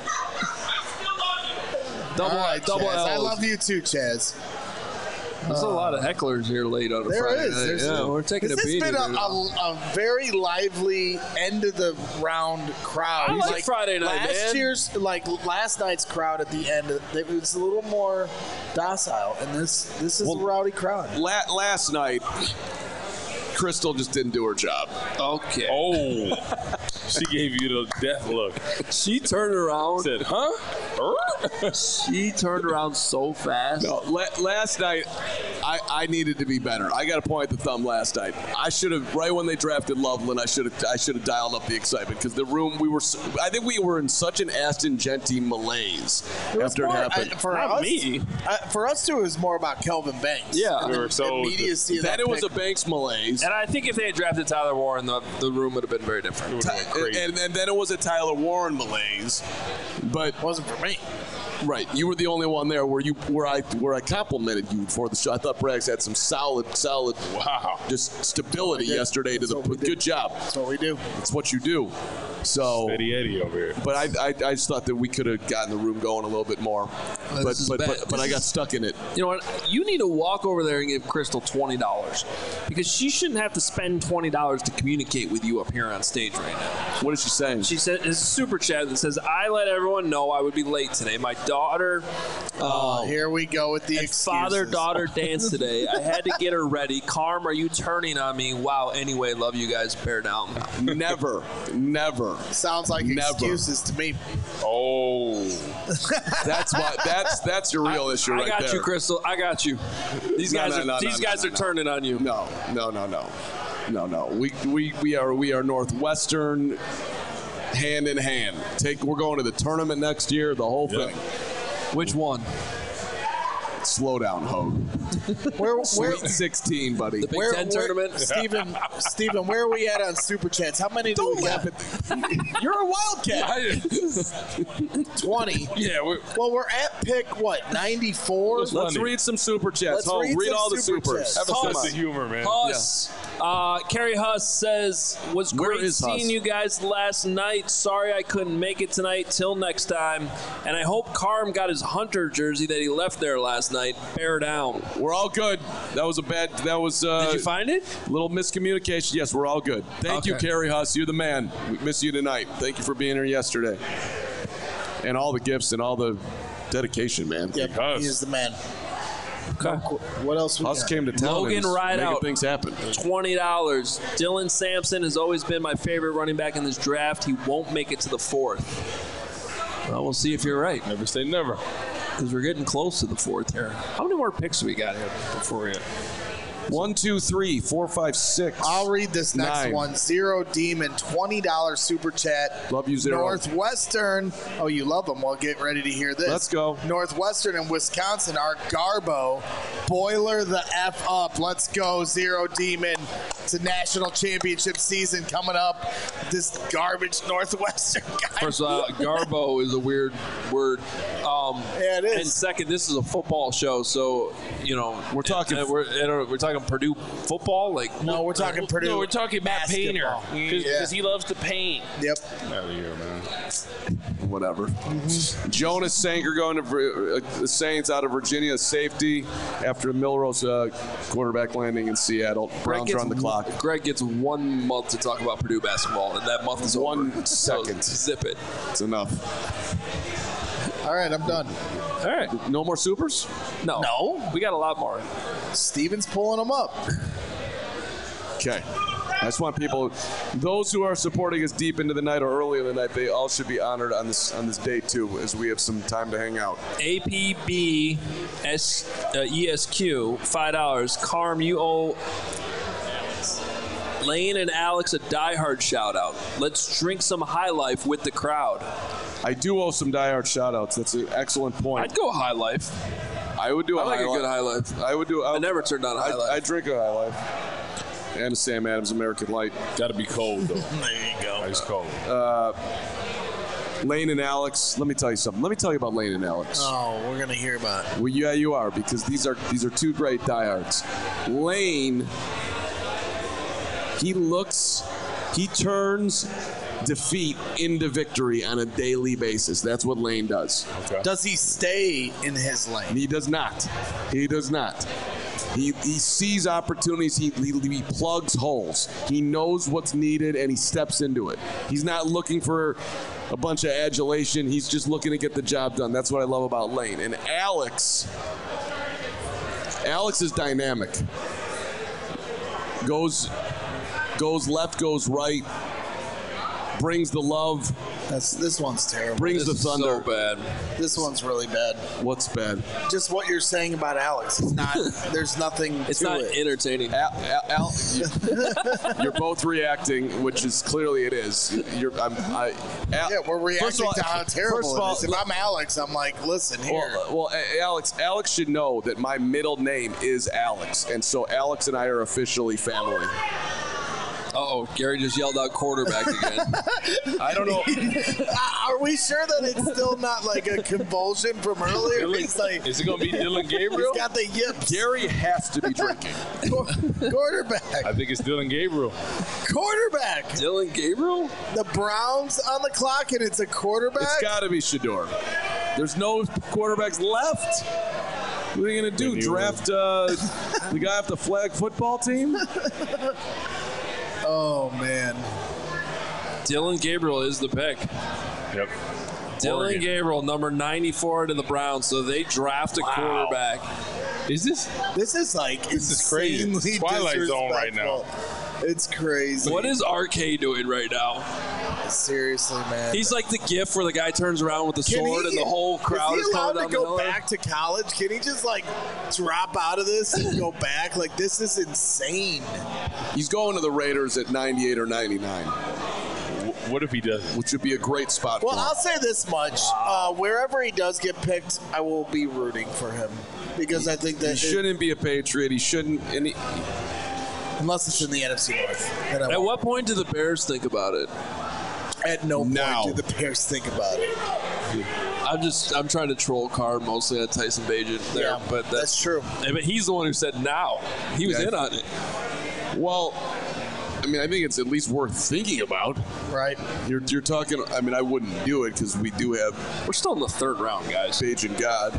All right, double Chaz. I L's. love you too, Chaz. There's a lot of hecklers here late on a There Friday is. night. Yeah, we're taking a This beating. has been here. a very lively end of the round crowd. I like Friday night, last night's crowd at the end, it was a little more docile, and this is a rowdy crowd. Last night, Crystal just didn't do her job. Okay. Oh, she gave you the death look. She turned around. Said, huh? She turned around so fast. No, last night, I needed to be better. I got to point the thumb last night. I should have, right when they drafted Loveland, I should have dialed up the excitement because the room I think we were in such an Aston Genty malaise after it happened. For us too, it was more about Kelvin Banks. Yeah. We were so immediacy of Then that it was pick. a Banks malaise. And I think if they had drafted Tyler Warren, the room would have been very different. And then it was a Tyler Warren malaise. But It wasn't for me. right, you were the only one there where I complimented you for the show. I thought Braggs had some solid wow. just stability yesterday to the good job. That's what we do. It's what you do. So Eddie Eddie over here. But I just thought that we could have gotten the room going a little bit more. This is bad. But I got stuck in it. You know what? You need to walk over there and give Crystal $20 because she shouldn't have to spend $20 to communicate with you up here on stage right now. What is she saying? She said, "It's a super chat that says I let everyone know I would be late today. My daughter, Here we go with the excuses. father-daughter dance today. I had to get her ready. Carm, are you turning on me? Wow. Anyway, love you guys. Bear down. Never. Sounds like Never. excuses to me. Oh. That's your real issue right I got there. you, Crystal. I got you. These guys are turning on you. No. We are Northwestern hand in hand. We're going to the tournament next year, the whole thing. Which one? Slow down, Hogue. Where, Sweet 16, buddy. The Big Ten tournament? Steven, where are we at on Super Chats? How many do we got? You're a Wildcat. 20. Yeah. Well, we're at pick, 94? Let's Let's read some super chats. Let's read Read some all the super supers. chats. Have a Huss. sense of humor, man. Huss. Carrie Huss says, was Where great is Huss? seeing you guys last night. Sorry I couldn't make it tonight. Till next time. And I hope Carm got his Hunter jersey that he left there last night. Bear down. We're all good. That was Did you find it? little miscommunication. Yes, we're all good. Thank you, Okay. Carrie Huss. You're the man. We miss you tonight. Thank you for being here yesterday. And all the gifts and all the dedication, man. Yep, Huss. he is the man. Okay. What else we Huss got? came to town Logan and is making Rideout. things happen. $20. Dylan Sampson has always been my favorite running back in this draft. He won't make it to the fourth. Well, we'll see if you're right, Never say never. because we're getting close to the fourth here. How many more picks do we got here before we 1, 2, 3, 4, 5, 6. I'll read this next 9. one. Zero Demon, $20 super chat. Love you, Zero. Northwestern. Oh, you love them. Well, get ready to hear this. Let's go. Northwestern and Wisconsin are Garbo. Boiler the F up. Let's go, Zero Demon. It's a national championship season coming up. This garbage Northwestern guy. First of all, Garbo is a weird word. Yeah, it is. And second, this is a football show, so We're talking- we're talking Purdue football. Like No, we're talking Purdue. No, we're talking Matt Painter basketball. because he loves to paint. Yep. Out of here, man. Whatever. Jonas Sanker going to the Saints out of Virginia, safety after a Milrose quarterback landing in Seattle. Browns are on the clock. Greg gets 1 month to talk about Purdue basketball, and that month is 1 over. second. So zip it. It's enough. All right, I'm done. All right. No more supers? No. We got a lot more. Steven's pulling them up. Okay. I just want people, those who are supporting us deep into the night or early in the night, they all should be honored on this day too, as we have some time to hang out. APB ESQ $5. Carm, you owe Lane and Alex, a diehard shout-out. Let's drink some High Life with the crowd. I do owe some diehard shout-outs. That's an excellent point. I'd go High Life. I would do I like a good High Life. I would do. I never turned down a High Life. I drink a High Life. And a Sam Adams American Light. Got to be cold, though. There you go. Ice cold. Lane and Alex, let me tell you something. Let me tell you about Lane and Alex. Oh, we're going to hear about it. Well, yeah, you are, because these are two great diehards. Lane, he turns defeat into victory on a daily basis. That's what Lane does. Okay. Does he stay in his lane? He does not. He does not. He sees opportunities. He plugs holes. He knows what's needed, and he steps into it. He's not looking for a bunch of adulation. He's just looking to get the job done. That's what I love about Lane. And Alex is dynamic. Goes left, goes right, brings the love. This one's terrible. Brings the thunder. So bad. This one's really bad. What's bad? Just what you're saying about Alex. It's not. There's nothing. It's to not it. entertaining. You're both reacting, which is clearly it is. Yeah, we're reacting to how terrible it is. If I'm Alex, I'm like, listen here. Well, Alex should know that my middle name is Alex, and so Alex and I are officially family. Uh-oh, Gary just yelled out quarterback again. I don't know. Are we sure that it's still not like a convulsion from earlier? It's like, is it going to be Dylan Gabriel? He's got the yips. Gary has to be drinking. Quarterback. I think it's Dylan Gabriel. Quarterback. Dylan Gabriel? The Browns on the clock, and it's a quarterback? It's got to be Shedeur. There's no quarterbacks left. What are you going to do? Draft the guy off the flag football team? Oh, man. Dylan Gabriel is the pick. Yep. Dylan Oregon. Gabriel, number 94 to the Browns, so they draft a quarterback. Is this? This is like This is crazy. insanely Twilight Zone right now. disrespectful. It's crazy. What is RK doing right now? Seriously, man. He's like the gif where the guy turns around with the Can sword and the whole crowd is he allowed coming to down the go hill. back to college? Can he just like drop out of this and go back? Like, this is insane. He's going to the Raiders at 98 or 99, What if he doesn't? which would be a great spot Well, for him. I'll say this much: wherever he does get picked, I will be rooting for him because I think that He shouldn't be a Patriot. He shouldn't. unless it's in the NFC North. then I At won't. what point do the Bears think about it? At no point Now. do the Bears think about it. I'm trying to troll card mostly on Tyson Bagent there, Yeah, but that's true. But he's the one who said now. He was Yeah. in on it. Well, I mean, I think it's at least worth thinking about. Right? You're talking. I mean, I wouldn't do it because we do have We're still in the third round, guys. Page and God.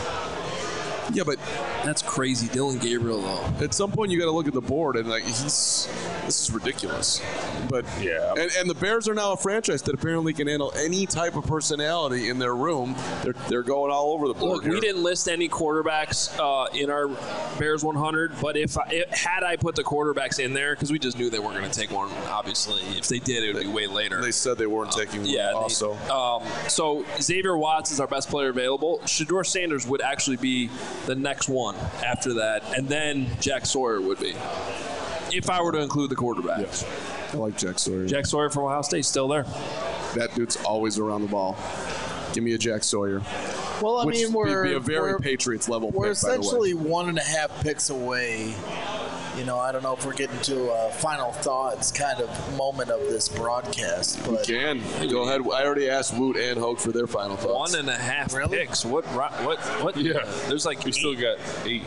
Yeah, but That's crazy. Dylan Gabriel, though. at some point you got to look at the board and like this is ridiculous. But Yeah. and the Bears are now a franchise that apparently can handle any type of personality in their room. They're going all over the board. Look, we didn't list any quarterbacks in our Bears 100, but had I put the quarterbacks in there, because we just knew they weren't going to take one, obviously. If they did, it would be way later. They said they weren't taking one also. So Xavier Watts is our best player available. Shedeur Sanders would actually be the next one after that, and then Jack Sawyer would be, if I were to include the quarterbacks. I like Jack Sawyer. Jack Sawyer from Ohio State, still there. That dude's always around the ball. Give me a Jack Sawyer. Well, I Which mean, would be a very Patriots level pick, We're by the way. essentially 1.5 picks away. You know, I don't know if we're getting to a final thoughts kind of moment of this broadcast, but Can go ahead. I already asked Woot and Hoke for their final thoughts. 1.5 Really? picks. What? Yeah. There's like We still got 8.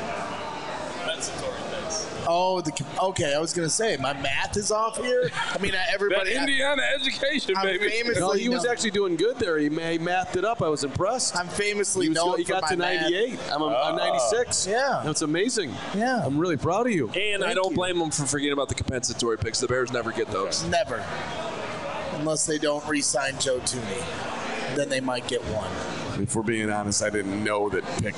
okay, I was gonna say my math is off here. I mean, everybody. That Indiana education, I'm baby. famously No, he was known- actually doing good there. He mathed it up. I was impressed. I'm famously He known got for to my math. 98. I'm 96. Yeah. That's amazing. Yeah. I'm really proud of you. And I Thank don't you. blame them for forgetting about the compensatory picks. The Bears never get those. Never, unless they don't re-sign Joe Tooney, then they might get one. If we're being honest, I didn't know that pick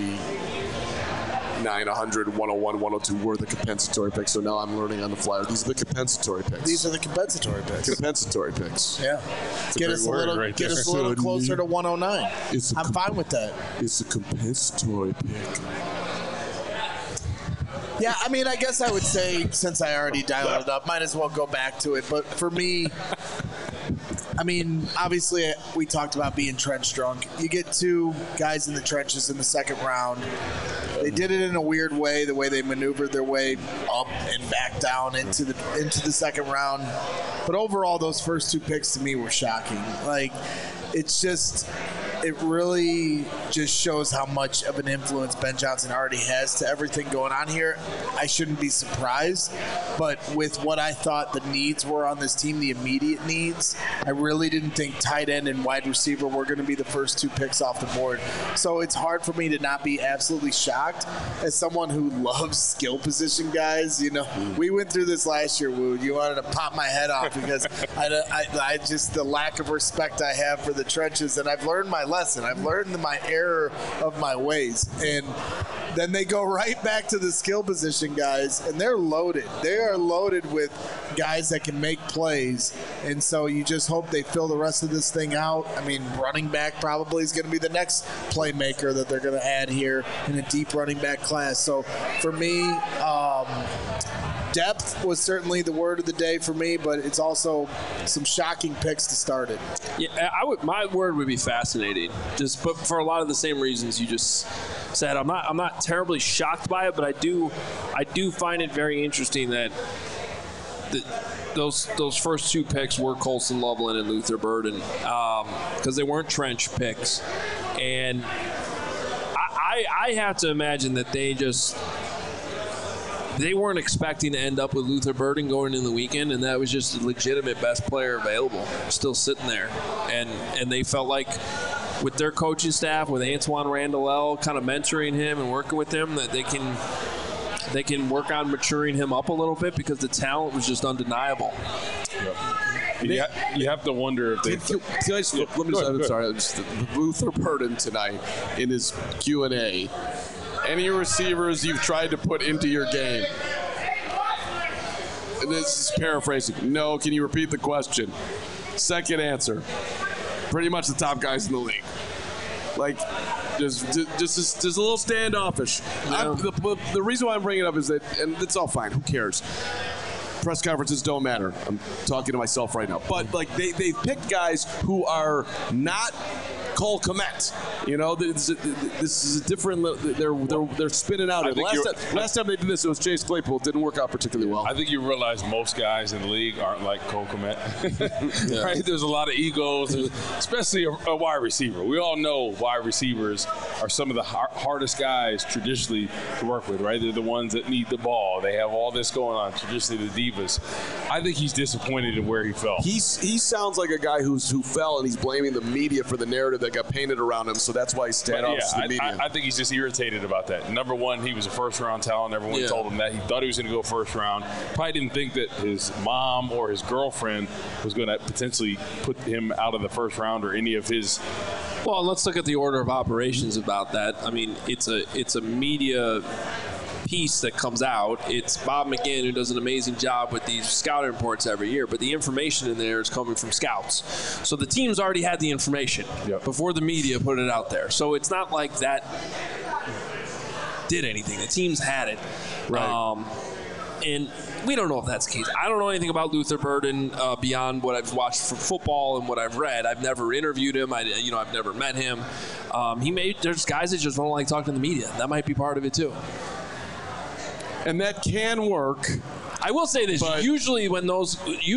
99, 100, 101, 102 were the compensatory picks, so now I'm learning on the fly. These are the compensatory picks. These are the compensatory picks. compensatory picks. Yeah, get great us a word little, right get there. us a little closer to 109. It's a I'm fine with that. It's a compensatory pick. Yeah, I mean, I guess I would say, since I already dialed it up, might as well go back to it. But for me, I mean, obviously, we talked about being trench drunk. You get two guys in the trenches in the second round. They did it in a weird way, the way they maneuvered their way up and back down into the second round. But overall, those first two picks to me were shocking. Like, it really just shows how much of an influence Ben Johnson already has to everything going on here. I shouldn't be surprised, but with what I thought the needs were on this team, the immediate needs, I really didn't think tight end and wide receiver were going to be the first two picks off the board. So it's hard for me to not be absolutely shocked as someone who loves skill position guys. You know, we went through this last year, Woo. You wanted to pop my head off because I just the lack of respect I have for the trenches, and I've learned my lesson. I've learned my error of my ways. And then they go right back to the skill position guys, and they're loaded. They are loaded with guys that can make plays. And so you just hope they fill the rest of this thing out. I mean, running back probably is going to be the next playmaker that they're going to add here in a deep running back class. So for me, depth was certainly the word of the day for me, but it's also some shocking picks to start it. Yeah, my word would be fascinating. But for a lot of the same reasons you just said. I'm not terribly shocked by it, but I do find it very interesting that those first two picks were Colson Loveland and Luther Burden because they weren't trench picks, and I have to imagine that they weren't expecting to end up with Luther Burden going in the weekend, and that was just a legitimate best player available, still sitting there. And they felt like with their coaching staff, with Antoine Randall kind of mentoring him and working with him, that they can work on maturing him up a little bit because the talent was just undeniable. Yep. You have to wonder if they. Luther Burden tonight in his Q&A. Any receivers you've tried to put into your game? And this is paraphrasing. No, can you repeat the question? Second answer. Pretty much the top guys in the league. Like, just a little standoffish. Yeah. The reason why I'm bringing it up is that, and it's all fine. Who cares? Press conferences don't matter. I'm talking to myself right now. But, like, they picked guys who are not Cole Kmet. You know, this is a different. They're spinning out. Last time they did this, it was Chase Claypool. It didn't work out particularly well. I think you realize most guys in the league aren't like Cole Kmet. Yeah. Right? There's a lot of egos, especially a wide receiver. We all know wide receivers are some of the hardest guys traditionally to work with, right? They're the ones that need the ball. They have all this going on, traditionally the divas. I think he's disappointed in where he fell. He sounds like a guy who fell, and he's blaming the media for the narrative that got painted around him, so that's why he's standoff to the media. I think he's just irritated about that. Number one, he was a first-round talent. Everyone told him that. He thought he was going to go first round. Probably didn't think that his mom or his girlfriend was going to potentially put him out of the first round or any of his. Well, let's look at the order of operations about that. I mean, it's a media piece that comes out. It's Bob McGinn who does an amazing job with these scouting reports every year, but the information in there is coming from scouts. So the teams already had the information before the media put it out there. So it's not like that did anything. The teams had it. Right. And we don't know if that's the case. I don't know anything about Luther Burden beyond what I've watched from football and what I've read. I've never interviewed him. I've never met him. There's guys that just don't like talking to the media. That might be part of it too. And that can work. I will say this: usually when those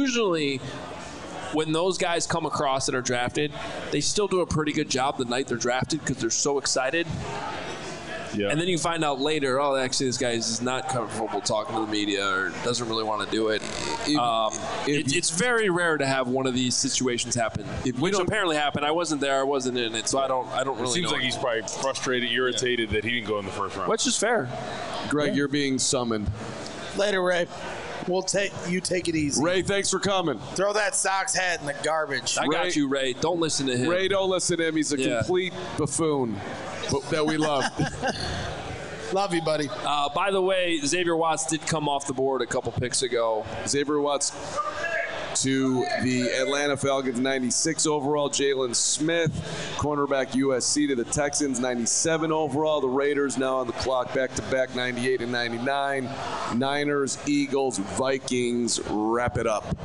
guys come across that are drafted, they still do a pretty good job the night they're drafted because they're so excited. Yeah. And then you find out later, actually, this guy is not comfortable talking to the media or doesn't really want to do it. It's very rare to have one of these situations happen, which apparently happened. I wasn't there. I wasn't in it, so I don't really know. It seems like he's probably frustrated, irritated that he didn't go in the first round. Which is fair. Greg, you're being summoned. Later, Ray. You take it easy. Ray, thanks for coming. Throw that Sox hat in the garbage. I got you, Ray. Don't listen to him. Ray, don't listen to him. He's a complete buffoon that we love. Love you, buddy. By the way, Xavier Watts did come off the board a couple picks ago. Xavier Watts to the Atlanta Falcons, 96 overall. Jalen Smith, cornerback USC to the Texans, 97 overall. The Raiders now on the clock, back-to-back, 98 and 99. Niners, Eagles, Vikings, wrap it up.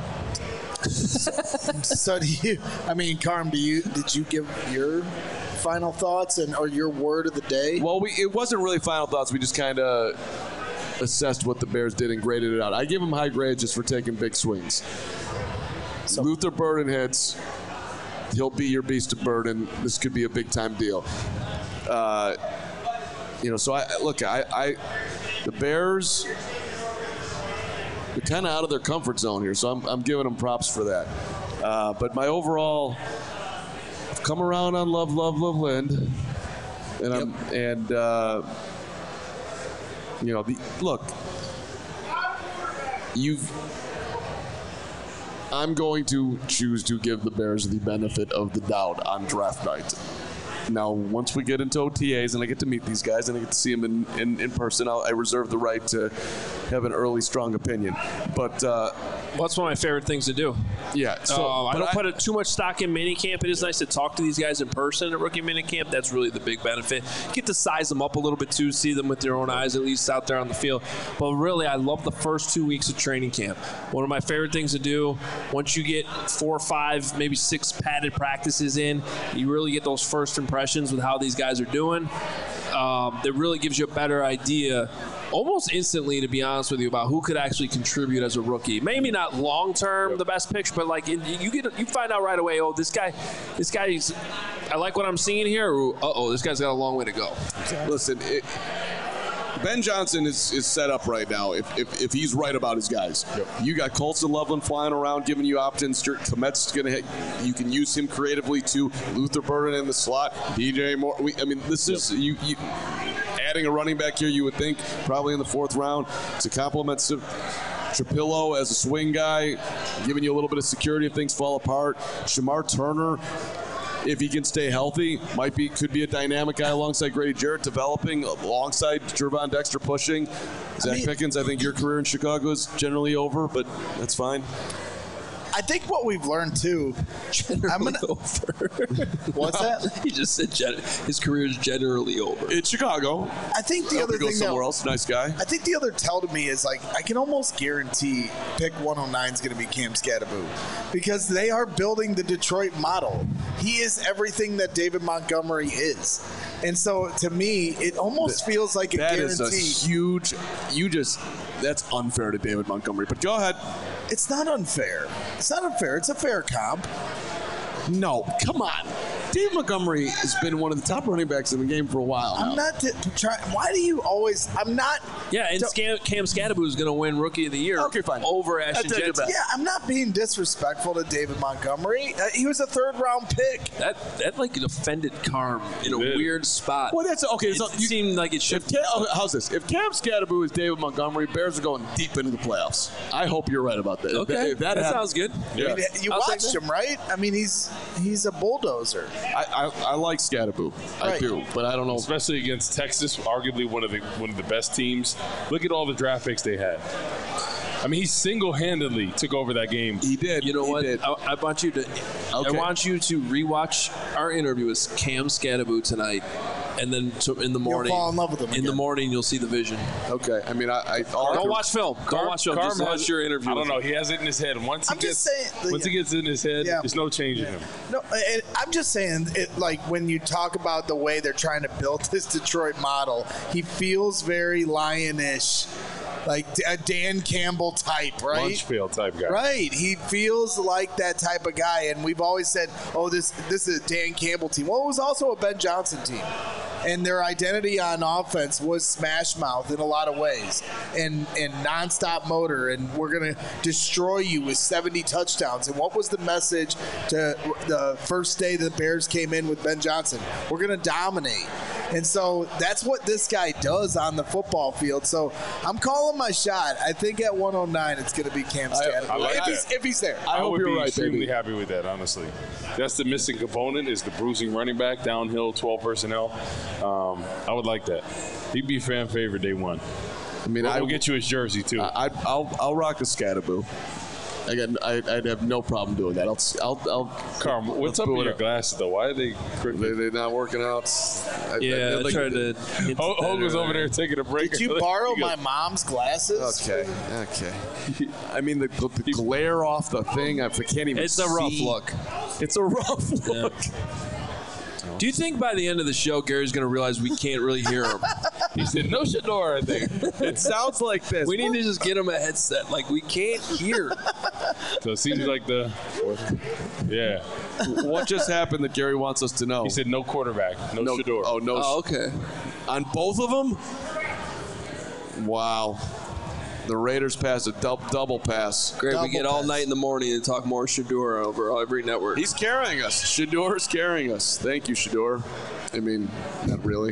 So Carm, did you give your final thoughts or your word of the day? Well, it wasn't really final thoughts. We just kind of assessed what the Bears did and graded it out. I give them high grades just for taking big swings. So, Luther Burden hits. He'll be your beast of burden. This could be a big-time deal. So the Bears, they're kind of out of their comfort zone here, so I'm giving them props for that. But my overall, I've come around on Love Lind, and I'm going to choose to give the Bears the benefit of the doubt on draft night. Now, once we get into OTAs and I get to meet these guys and I get to see them in person, I reserve the right to have an early, strong opinion. But that's one of my favorite things to do. Yeah. So I don't put too much stock in minicamp. It is nice to talk to these guys in person at rookie minicamp. That's really the big benefit. Get to size them up a little bit too, see them with your own eyes, at least out there on the field. But really, I love the first 2 weeks of training camp. One of my favorite things to do, once you get 4 or 5, maybe 6 padded practices in, you really get those first impressions with how these guys are doing. That really gives you a better idea almost instantly, to be honest with you, about who could actually contribute as a rookie. Maybe not long-term the best picture, but you find out right away, this guy's, I like what I'm seeing here, or, this guy's got a long way to go. Listen, Ben Johnson is set up right now if he's right about his guys. Yep. You got Colston Loveland flying around giving you opt-ins. Komet's going to hit. You can use him creatively too. Luther Burden in the slot. DJ Moore. This is you adding a running back here, you would think, probably in the 4th round to complement Trapillo as a swing guy, giving you a little bit of security if things fall apart. Shamar Turner, if he can stay healthy, could be a dynamic guy alongside Grady Jarrett, developing alongside Gervon Dexter pushing. Zach Pickens, I think your career in Chicago is generally over, but that's fine. I think what we've learned too. Over. What's that? He just said his career is generally over. In Chicago. I think the other thing somewhere else. Nice guy. I think the other tell to me is I can almost guarantee pick 109 is going to be Cam Scatterboot because they are building the Detroit model. He is everything that David Montgomery is, and so to me, it almost feels like a guarantee. That is a huge. That's unfair to David Montgomery. But go ahead. It's not unfair. It's a fair comp. No, come on. Dave Montgomery has been one of the top running backs in the game for a while now. I'm not trying. Why do you always? I'm not. Yeah, and Cam Scatterboot is going to win Rookie of the Year. Okay, fine. Over Ashton Jensen. Yeah, I'm not being disrespectful to David Montgomery. He was a 3rd-round pick. That offended Carm in a weird spot. Well, that's okay. It seemed like it should. How's this? If Cam Scatterboot is David Montgomery, Bears are going deep into the playoffs. I hope you're right about that. Okay, that sounds good. Yeah. You watched him, right? He's a bulldozer. I like Scatterboot. Right. I do, but I don't know. Especially against Texas, arguably one of the best teams. Look at all the draft picks they had. He single-handedly took over that game. He did. You know what? I want you to rewatch our interview with Cam Scatterboot tonight, and then in the morning, you'll fall in love with him again. In the morning, you'll see the vision. Okay. Don't watch film. Just watch your interview. I don't know. He has it in his head. Once he gets in his head, there's no changing him. No, I'm just saying, when you talk about the way they're trying to build this Detroit model, he feels very Lion-ish. Like a Dan Campbell type, right? Lunchfield type guy. Right. He feels like that type of guy. And we've always said, this is a Dan Campbell team. Well, it was also a Ben Johnson team. And their identity on offense was smash mouth in a lot of ways and nonstop motor. And we're going to destroy you with 70 touchdowns. And what was the message to the first day the Bears came in with Ben Johnson? We're going to dominate. And so that's what this guy does on the football field. So I'm calling my shot. I think at 109 it's going to be Cam Scatterboot if he's there. I would be extremely happy with that, honestly. That's the missing component is the bruising running back, downhill, 12 personnel. I would like that. He'd be fan favorite day one. I will get you his jersey too. I'll rock a Scatterboot. I'd have no problem doing that. I'll Carm, what's up with your glasses though? Why are they crooked? They're not working out. I tried to. Hogue was over there taking a break. Did you borrow my mom's glasses? Okay. I mean, the glare off the thing, I can't even see. It's a rough look. It's a rough look. Do you think by the end of the show, Gary's going to realize we can't really hear him? He said, no Shador, I think. It sounds like this. We need to just get him a headset. Like, we can't hear. So it seems like yeah. What just happened that Gary wants us to know? He said no quarterback, no Shador. Oh, no. Oh, okay. On both of them? Wow. The Raiders pass a double pass. Great, we get all night in the morning and talk more Shador over every network. He's carrying us. Shador's carrying us. Thank you, Shador. I mean, not really.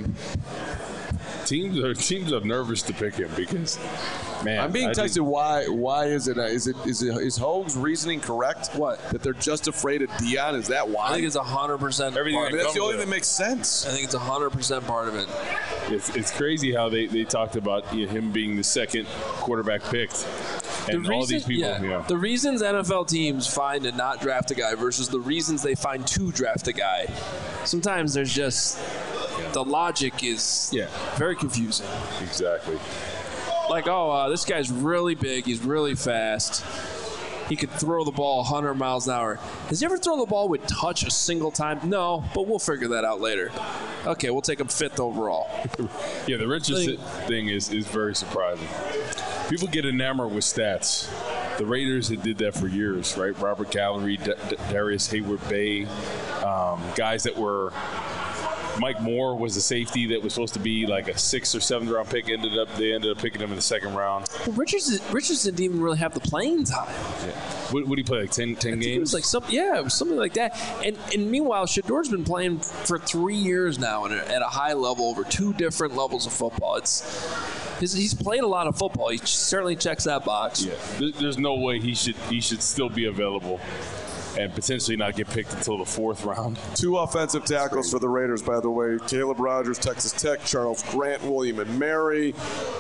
Teams are nervous to pick him because, man. I'm being texted. Why is it? Is Hogue's reasoning correct? What? That they're just afraid of Dion? Is that why? I think it's 100%. Everything. I mean, that's the only thing that makes sense. I think it's 100% part of it. It's crazy how they talked about him being the second quarterback picked. And all these people, The reasons NFL teams find to not draft a guy versus the reasons they find to draft a guy, sometimes there's just the logic is very confusing. Exactly. Like, this guy's really big. He's really fast. He could throw the ball 100 miles an hour. Has he ever thrown the ball with touch a single time? No, but we'll figure that out later. Okay, we'll take him 5th overall. Yeah, the Richardson thing is very surprising. People get enamored with stats. The Raiders had did that for years, right? Robert Gallery, Darius Hayward-Bay, guys that were – Mike Moore was a safety that was supposed to be like a 6th or 7th round pick. They ended up picking him in the 2nd round. Well, Richardson didn't even really have the playing time. Yeah. What did he play, like 10 games? It was like it was something like that. And meanwhile, Shador's been playing for 3 years now at a high level over 2 different levels of football. He's played a lot of football. He certainly checks that box. Yeah, there's no way he should still be available and potentially not get picked until the 4th round. 2 offensive tackles for the Raiders, by the way. Caleb Rogers, Texas Tech. Charles Grant, William and Mary.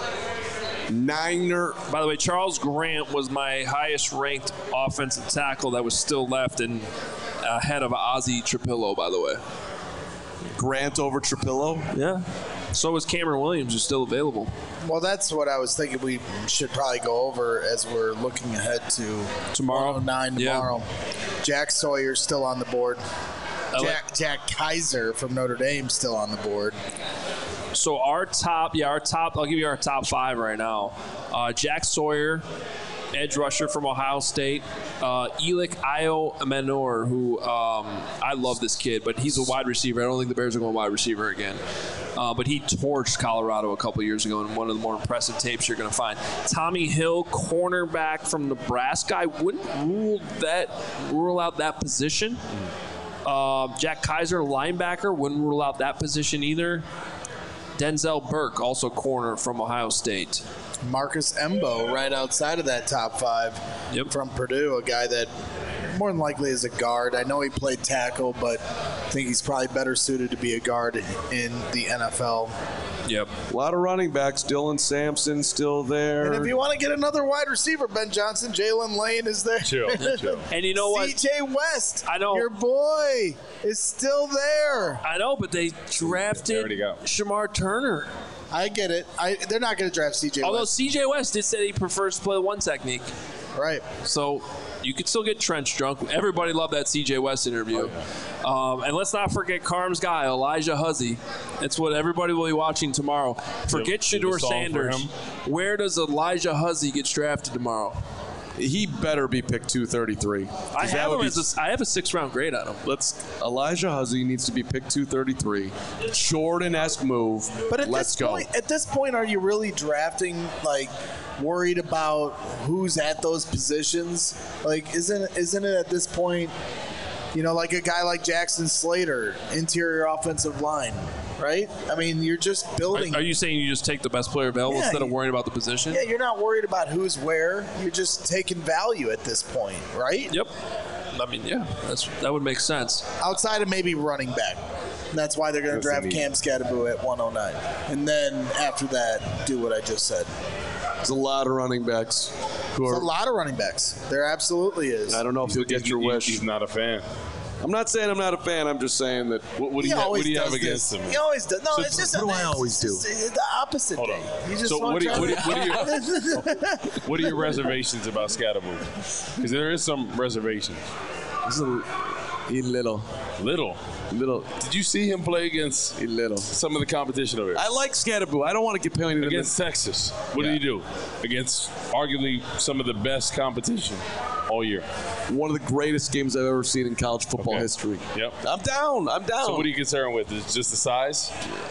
Niner. By the way, Charles Grant was my highest-ranked offensive tackle that was still left and ahead of Ozzie Trapillo, by the way. Grant over Trapillo? Yeah. So is Cameron Williams, who's still available. Well, that's what I was thinking we should probably go over as we're looking ahead to tomorrow. 109 tomorrow. Jack Sawyer's still on the board. Jack Kaiser from Notre Dame still on the board. So our top, I'll give you our top 5 right now. Jack Sawyer, edge rusher from Ohio State. Elik Io-Manor, who I love this kid, but he's a wide receiver. I don't think the Bears are going wide receiver again. But he torched Colorado a couple years ago in one of the more impressive tapes you're going to find. Tommy Hill, cornerback from Nebraska. I wouldn't rule out that position. Jack Kaiser, linebacker, wouldn't rule out that position either. Denzel Burke, also corner from Ohio State. Marcus Embo, right outside of that top 5 from Purdue, a guy that more than likely is a guard. I know he played tackle, but I think he's probably better suited to be a guard in the NFL. Yep. A lot of running backs. Dylan Sampson still there. And if you want to get another wide receiver, Ben Johnson, Jalen Lane is there. Chill. And you know what? C.J. West, I know. your boy, is still there. I know, but they drafted Shamar Turner. I get it. They're not going to draft C.J. West. Although C.J. West did say he prefers to play the 1 technique. Right. So you could still get trench drunk. Everybody loved that C.J. West interview. And let's not forget Carm's guy, Elijah Huzzy. That's what everybody will be watching tomorrow. Forget Shador Sanders. Where does Elijah Huzzy get drafted tomorrow? He better be picked 233. I have a 6th-round grade on him. Elijah Huzzy needs to be picked 233. Jordan-esque move. But let's go. At this point, are you really drafting, worried about who's at those positions? Isn't it at this point, like a guy like Jackson Slater, interior offensive line, right? I mean, you're just building. Are you saying you just take the best player available instead of worrying about the position? Yeah, you're not worried about who's where. You're just taking value at this point, right? Yep. I mean, yeah, that would make sense. Outside of maybe running back. That's why they're going to draft Cam Skattebo at 109. And then after that, do what I just said. There's a lot of running backs. There's a lot of running backs. There absolutely is. I don't know if you'll get your wish. He's not a fan. I'm not saying I'm not a fan. I'm just saying that. What do you have against him? He always does. No, it's just what do I always do? It's the opposite Hold on. thing. You just So want what are your reservations about Scatterboo? Because there is some reservations. He little. Did you see him play against some of the competition over here? I like Scatterboo. I don't want to get painted against Texas. What did he do? Against arguably some of the best competition all year. One of the greatest games I've ever seen in college football history. Yep. I'm down. So what are you concerned with? Is it just the size?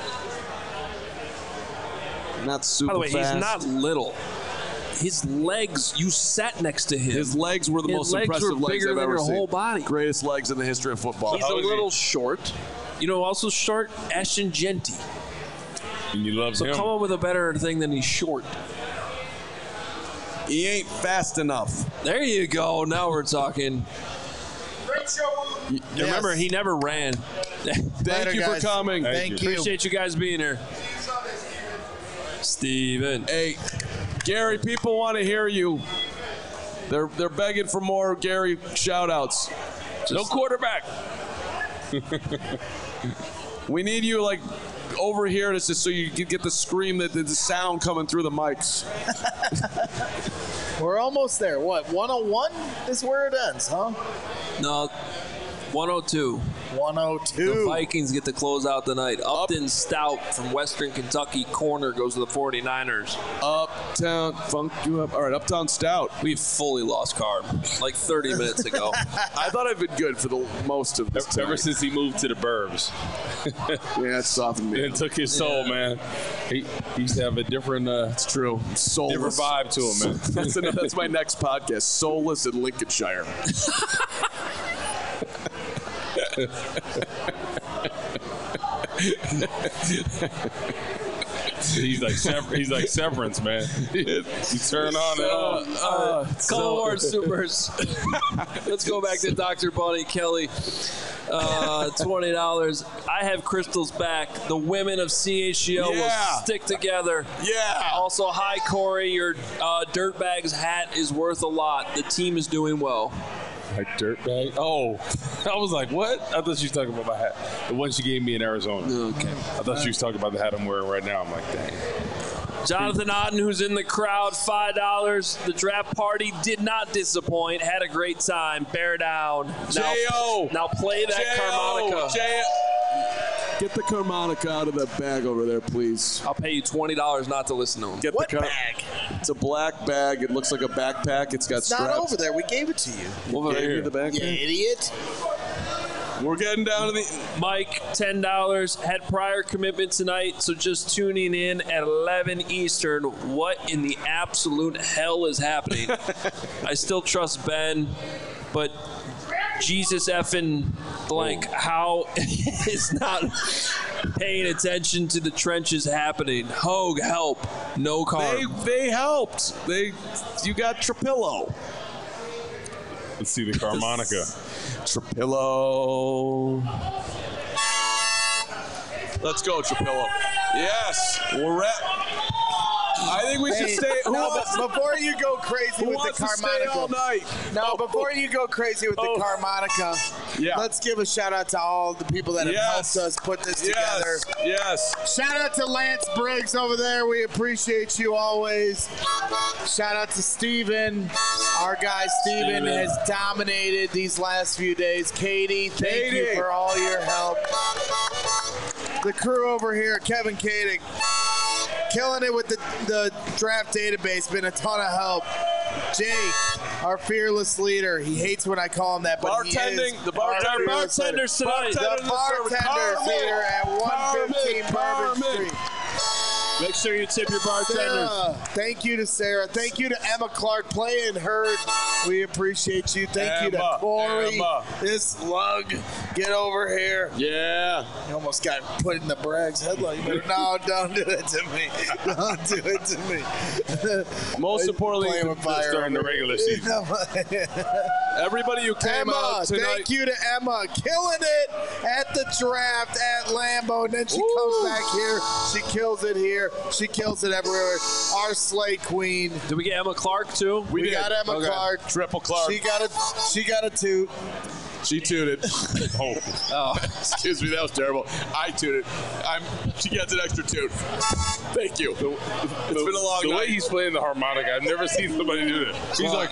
Not super By the way, fast. he's not little. His legs, you sat next to him. His legs were the most impressive legs bigger I've than ever your seen. whole body. Greatest legs in the history of football. He's a little short. You know, also short, Ashton Genty. And you love him. So come up with a better thing than he's short. He ain't fast enough. There you go. Now we're talking. Remember, he never ran. Thank you for coming. Thank you. Appreciate you guys being here. Steven. Hey, Gary, people want to hear you. They're begging for more Gary shout-outs. No quarterback. We need you, like, over here just so you can get the scream, the sound coming through the mics. We're almost there. What, 101 is where it ends, huh? No, 102. 102. The Vikings get to close out the night. Upton Stout from Western Kentucky, corner, goes to the 49ers. Uptown, funk you up. All right, Uptown Stout. We fully lost Carb like 30 minutes ago. I thought I'd been good for the most of this Ever time. since he moved to the burbs. Yeah, it softened me. It took his soul, man. He used to have a different It's true. Soulless. different vibe to him, man. That's my next podcast. Soulless in Lincolnshire. He's like Severance, man. You turn on and off. Call Ward Supers. Let's go back to Dr. Bunny Kelly. $20. I have Crystal's back. The women of CHGO will stick together. Yeah. Also, hi, Corey. Your Dirtbags hat is worth a lot. The team is doing well. Like dirtbag? Oh, I was like, what? I thought she was talking about my hat. The one she gave me in Arizona. Okay. I thought she was talking about the hat I'm wearing right now. I'm like, dang. Jonathan Otten, who's in the crowd, $5. The draft party did not disappoint. Had a great time. Bear down. J.O. Now play that harmonica. Get the harmonica out of the bag over there, please. I'll pay you $20 not to listen to him. Get What the bag? It's a black bag. It looks like a backpack. It's got It's straps. not over there. We gave it to you. Well, Right gave here. you the bag. You idiot. We're getting down to the. Mike, $10. Had prior commitment tonight, so just tuning in at 11 Eastern. What in the absolute hell is happening? I still trust Ben, but Jesus effing blank, how is not paying attention to the trenches happening? Hogue, help. No Carb. They helped. You got Trapillo. Let's see the harmonica. Trapillo. Let's go, Trapillo. Yes, we're at. I think we should stay. Before you go crazy Who with wants the to stay all harmonica. night? No, before you go crazy with the harmonica, Yeah. let's give a shout out to all the people that have helped us put this together. Yes. Shout out to Lance Briggs over there. We appreciate you always. Shout out to Steven. Our guy Steven has dominated these last few days. Katie, thank you for all your help. The crew over here, Kevin Kading, killing it with the draft database. Been a ton of help. Jake, our fearless leader. He hates when I call him that, but Bartending, he is the bartender. Bartenders tonight. the bartenders here at 115 Bourbon Street. Make sure you tip your bartenders. Sarah, thank you to Sarah. Thank you to Emma Clark playing herd. We appreciate you. Thank you to Corey. This lug, get over here. Yeah. You almost got put in the Bragg's headlight. No, don't do it to me. Don't do it to me. Most importantly, Playing with fire during the regular season. everybody who came Emma, out tonight. thank you to Emma, killing it at the draft at Lambeau, and then she comes back here. She kills it here. here. She kills it everywhere. Our Slay Queen. Did we get Emma Clark too? We got Emma Clark. Triple Clark. She got a toot. She tooted. Oh. Excuse me, that was terrible. I tooted. She gets an extra toot. Thank you. It's been a long night. The way he's playing the harmonica, I've never seen somebody do that. He's like...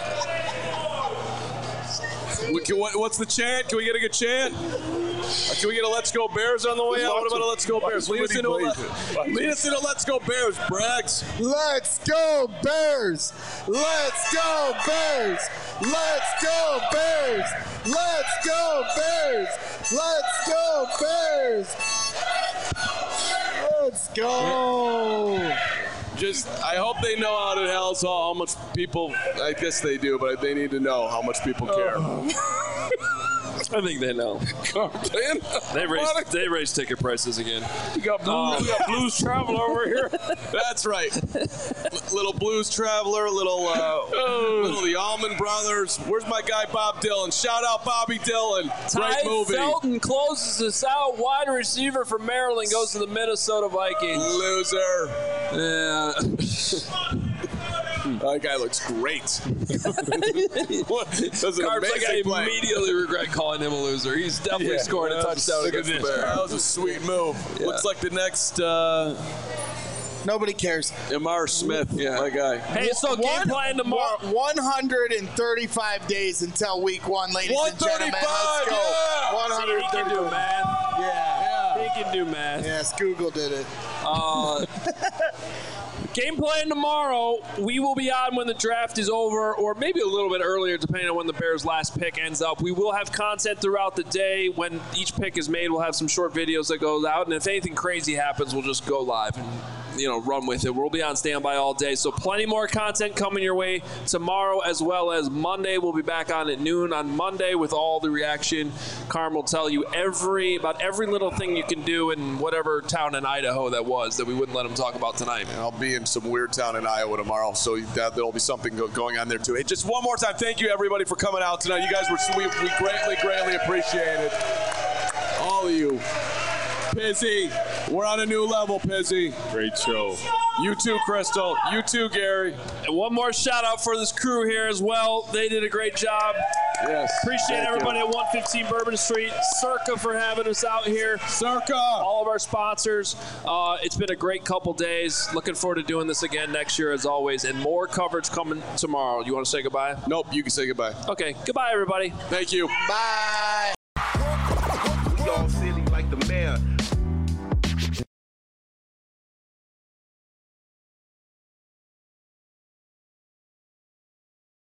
What's the chant? Can we get a good chant? Can we get a Let's Go Bears on the way out? What about a Let's Go Bears? Lead us into Let's Go Bears, Braggs. Let's go Bears! Let's go Bears! Let's go Bears! Let's go Bears! Let's go Bears! Let's go! I hope they know out at Hell's Hall how much people, I guess they do, but they need to know how much people care. I think they know. They raised ticket prices again. We got Blues Traveler over here. That's right. Little Blues Traveler, little the Allman Brothers. Where's my guy Bob Dylan? Shout out Bobby Dylan. Great movie. Felton closes us out. Wide receiver from Maryland goes to the Minnesota Vikings. Loser. Yeah. That guy looks great. I immediately regret calling him a loser. He's definitely scoring a touchdown against the Bears. That was a sweet move. Yeah. Looks like the next... Nobody cares. Amar Smith, my guy. Hey, so game plan tomorrow. 135 days until week 1, ladies and gentlemen. Let's go. Yeah. 135. He can do math. Yeah. He can do math. Yes, Google did it. Game plan tomorrow. We will be on when the draft is over, or maybe a little bit earlier, depending on when the Bears' last pick ends up. We will have content throughout the day. When each pick is made, we'll have some short videos that goes out, and if anything crazy happens, we'll just go live and run with it. We'll be on standby all day, so plenty more content coming your way tomorrow as well as Monday. We'll be back on at noon on Monday with all the reaction. Carm will tell you about every little thing you can do in whatever town in Idaho that we wouldn't let him talk about tonight. And I'll be in some weird town in Iowa tomorrow, so there'll be something going on there too. Hey, just one more time, thank you everybody for coming out tonight. You guys were sweet. We greatly appreciate it. All of you. Pizzy, we're on a new level, Pizzy. Great show. You too, Crystal. You too, Gary. And one more shout out for this crew here as well. They did a great job. Yes. Appreciate everybody at 115 Bourbon Street. Circa for having us out here. Circa. All of our sponsors. It's been a great couple days. Looking forward to doing this again next year as always. And more coverage coming tomorrow. You want to say goodbye? Nope, you can say goodbye. Okay. Goodbye, everybody. Thank you. Bye. We all silly like the mayor.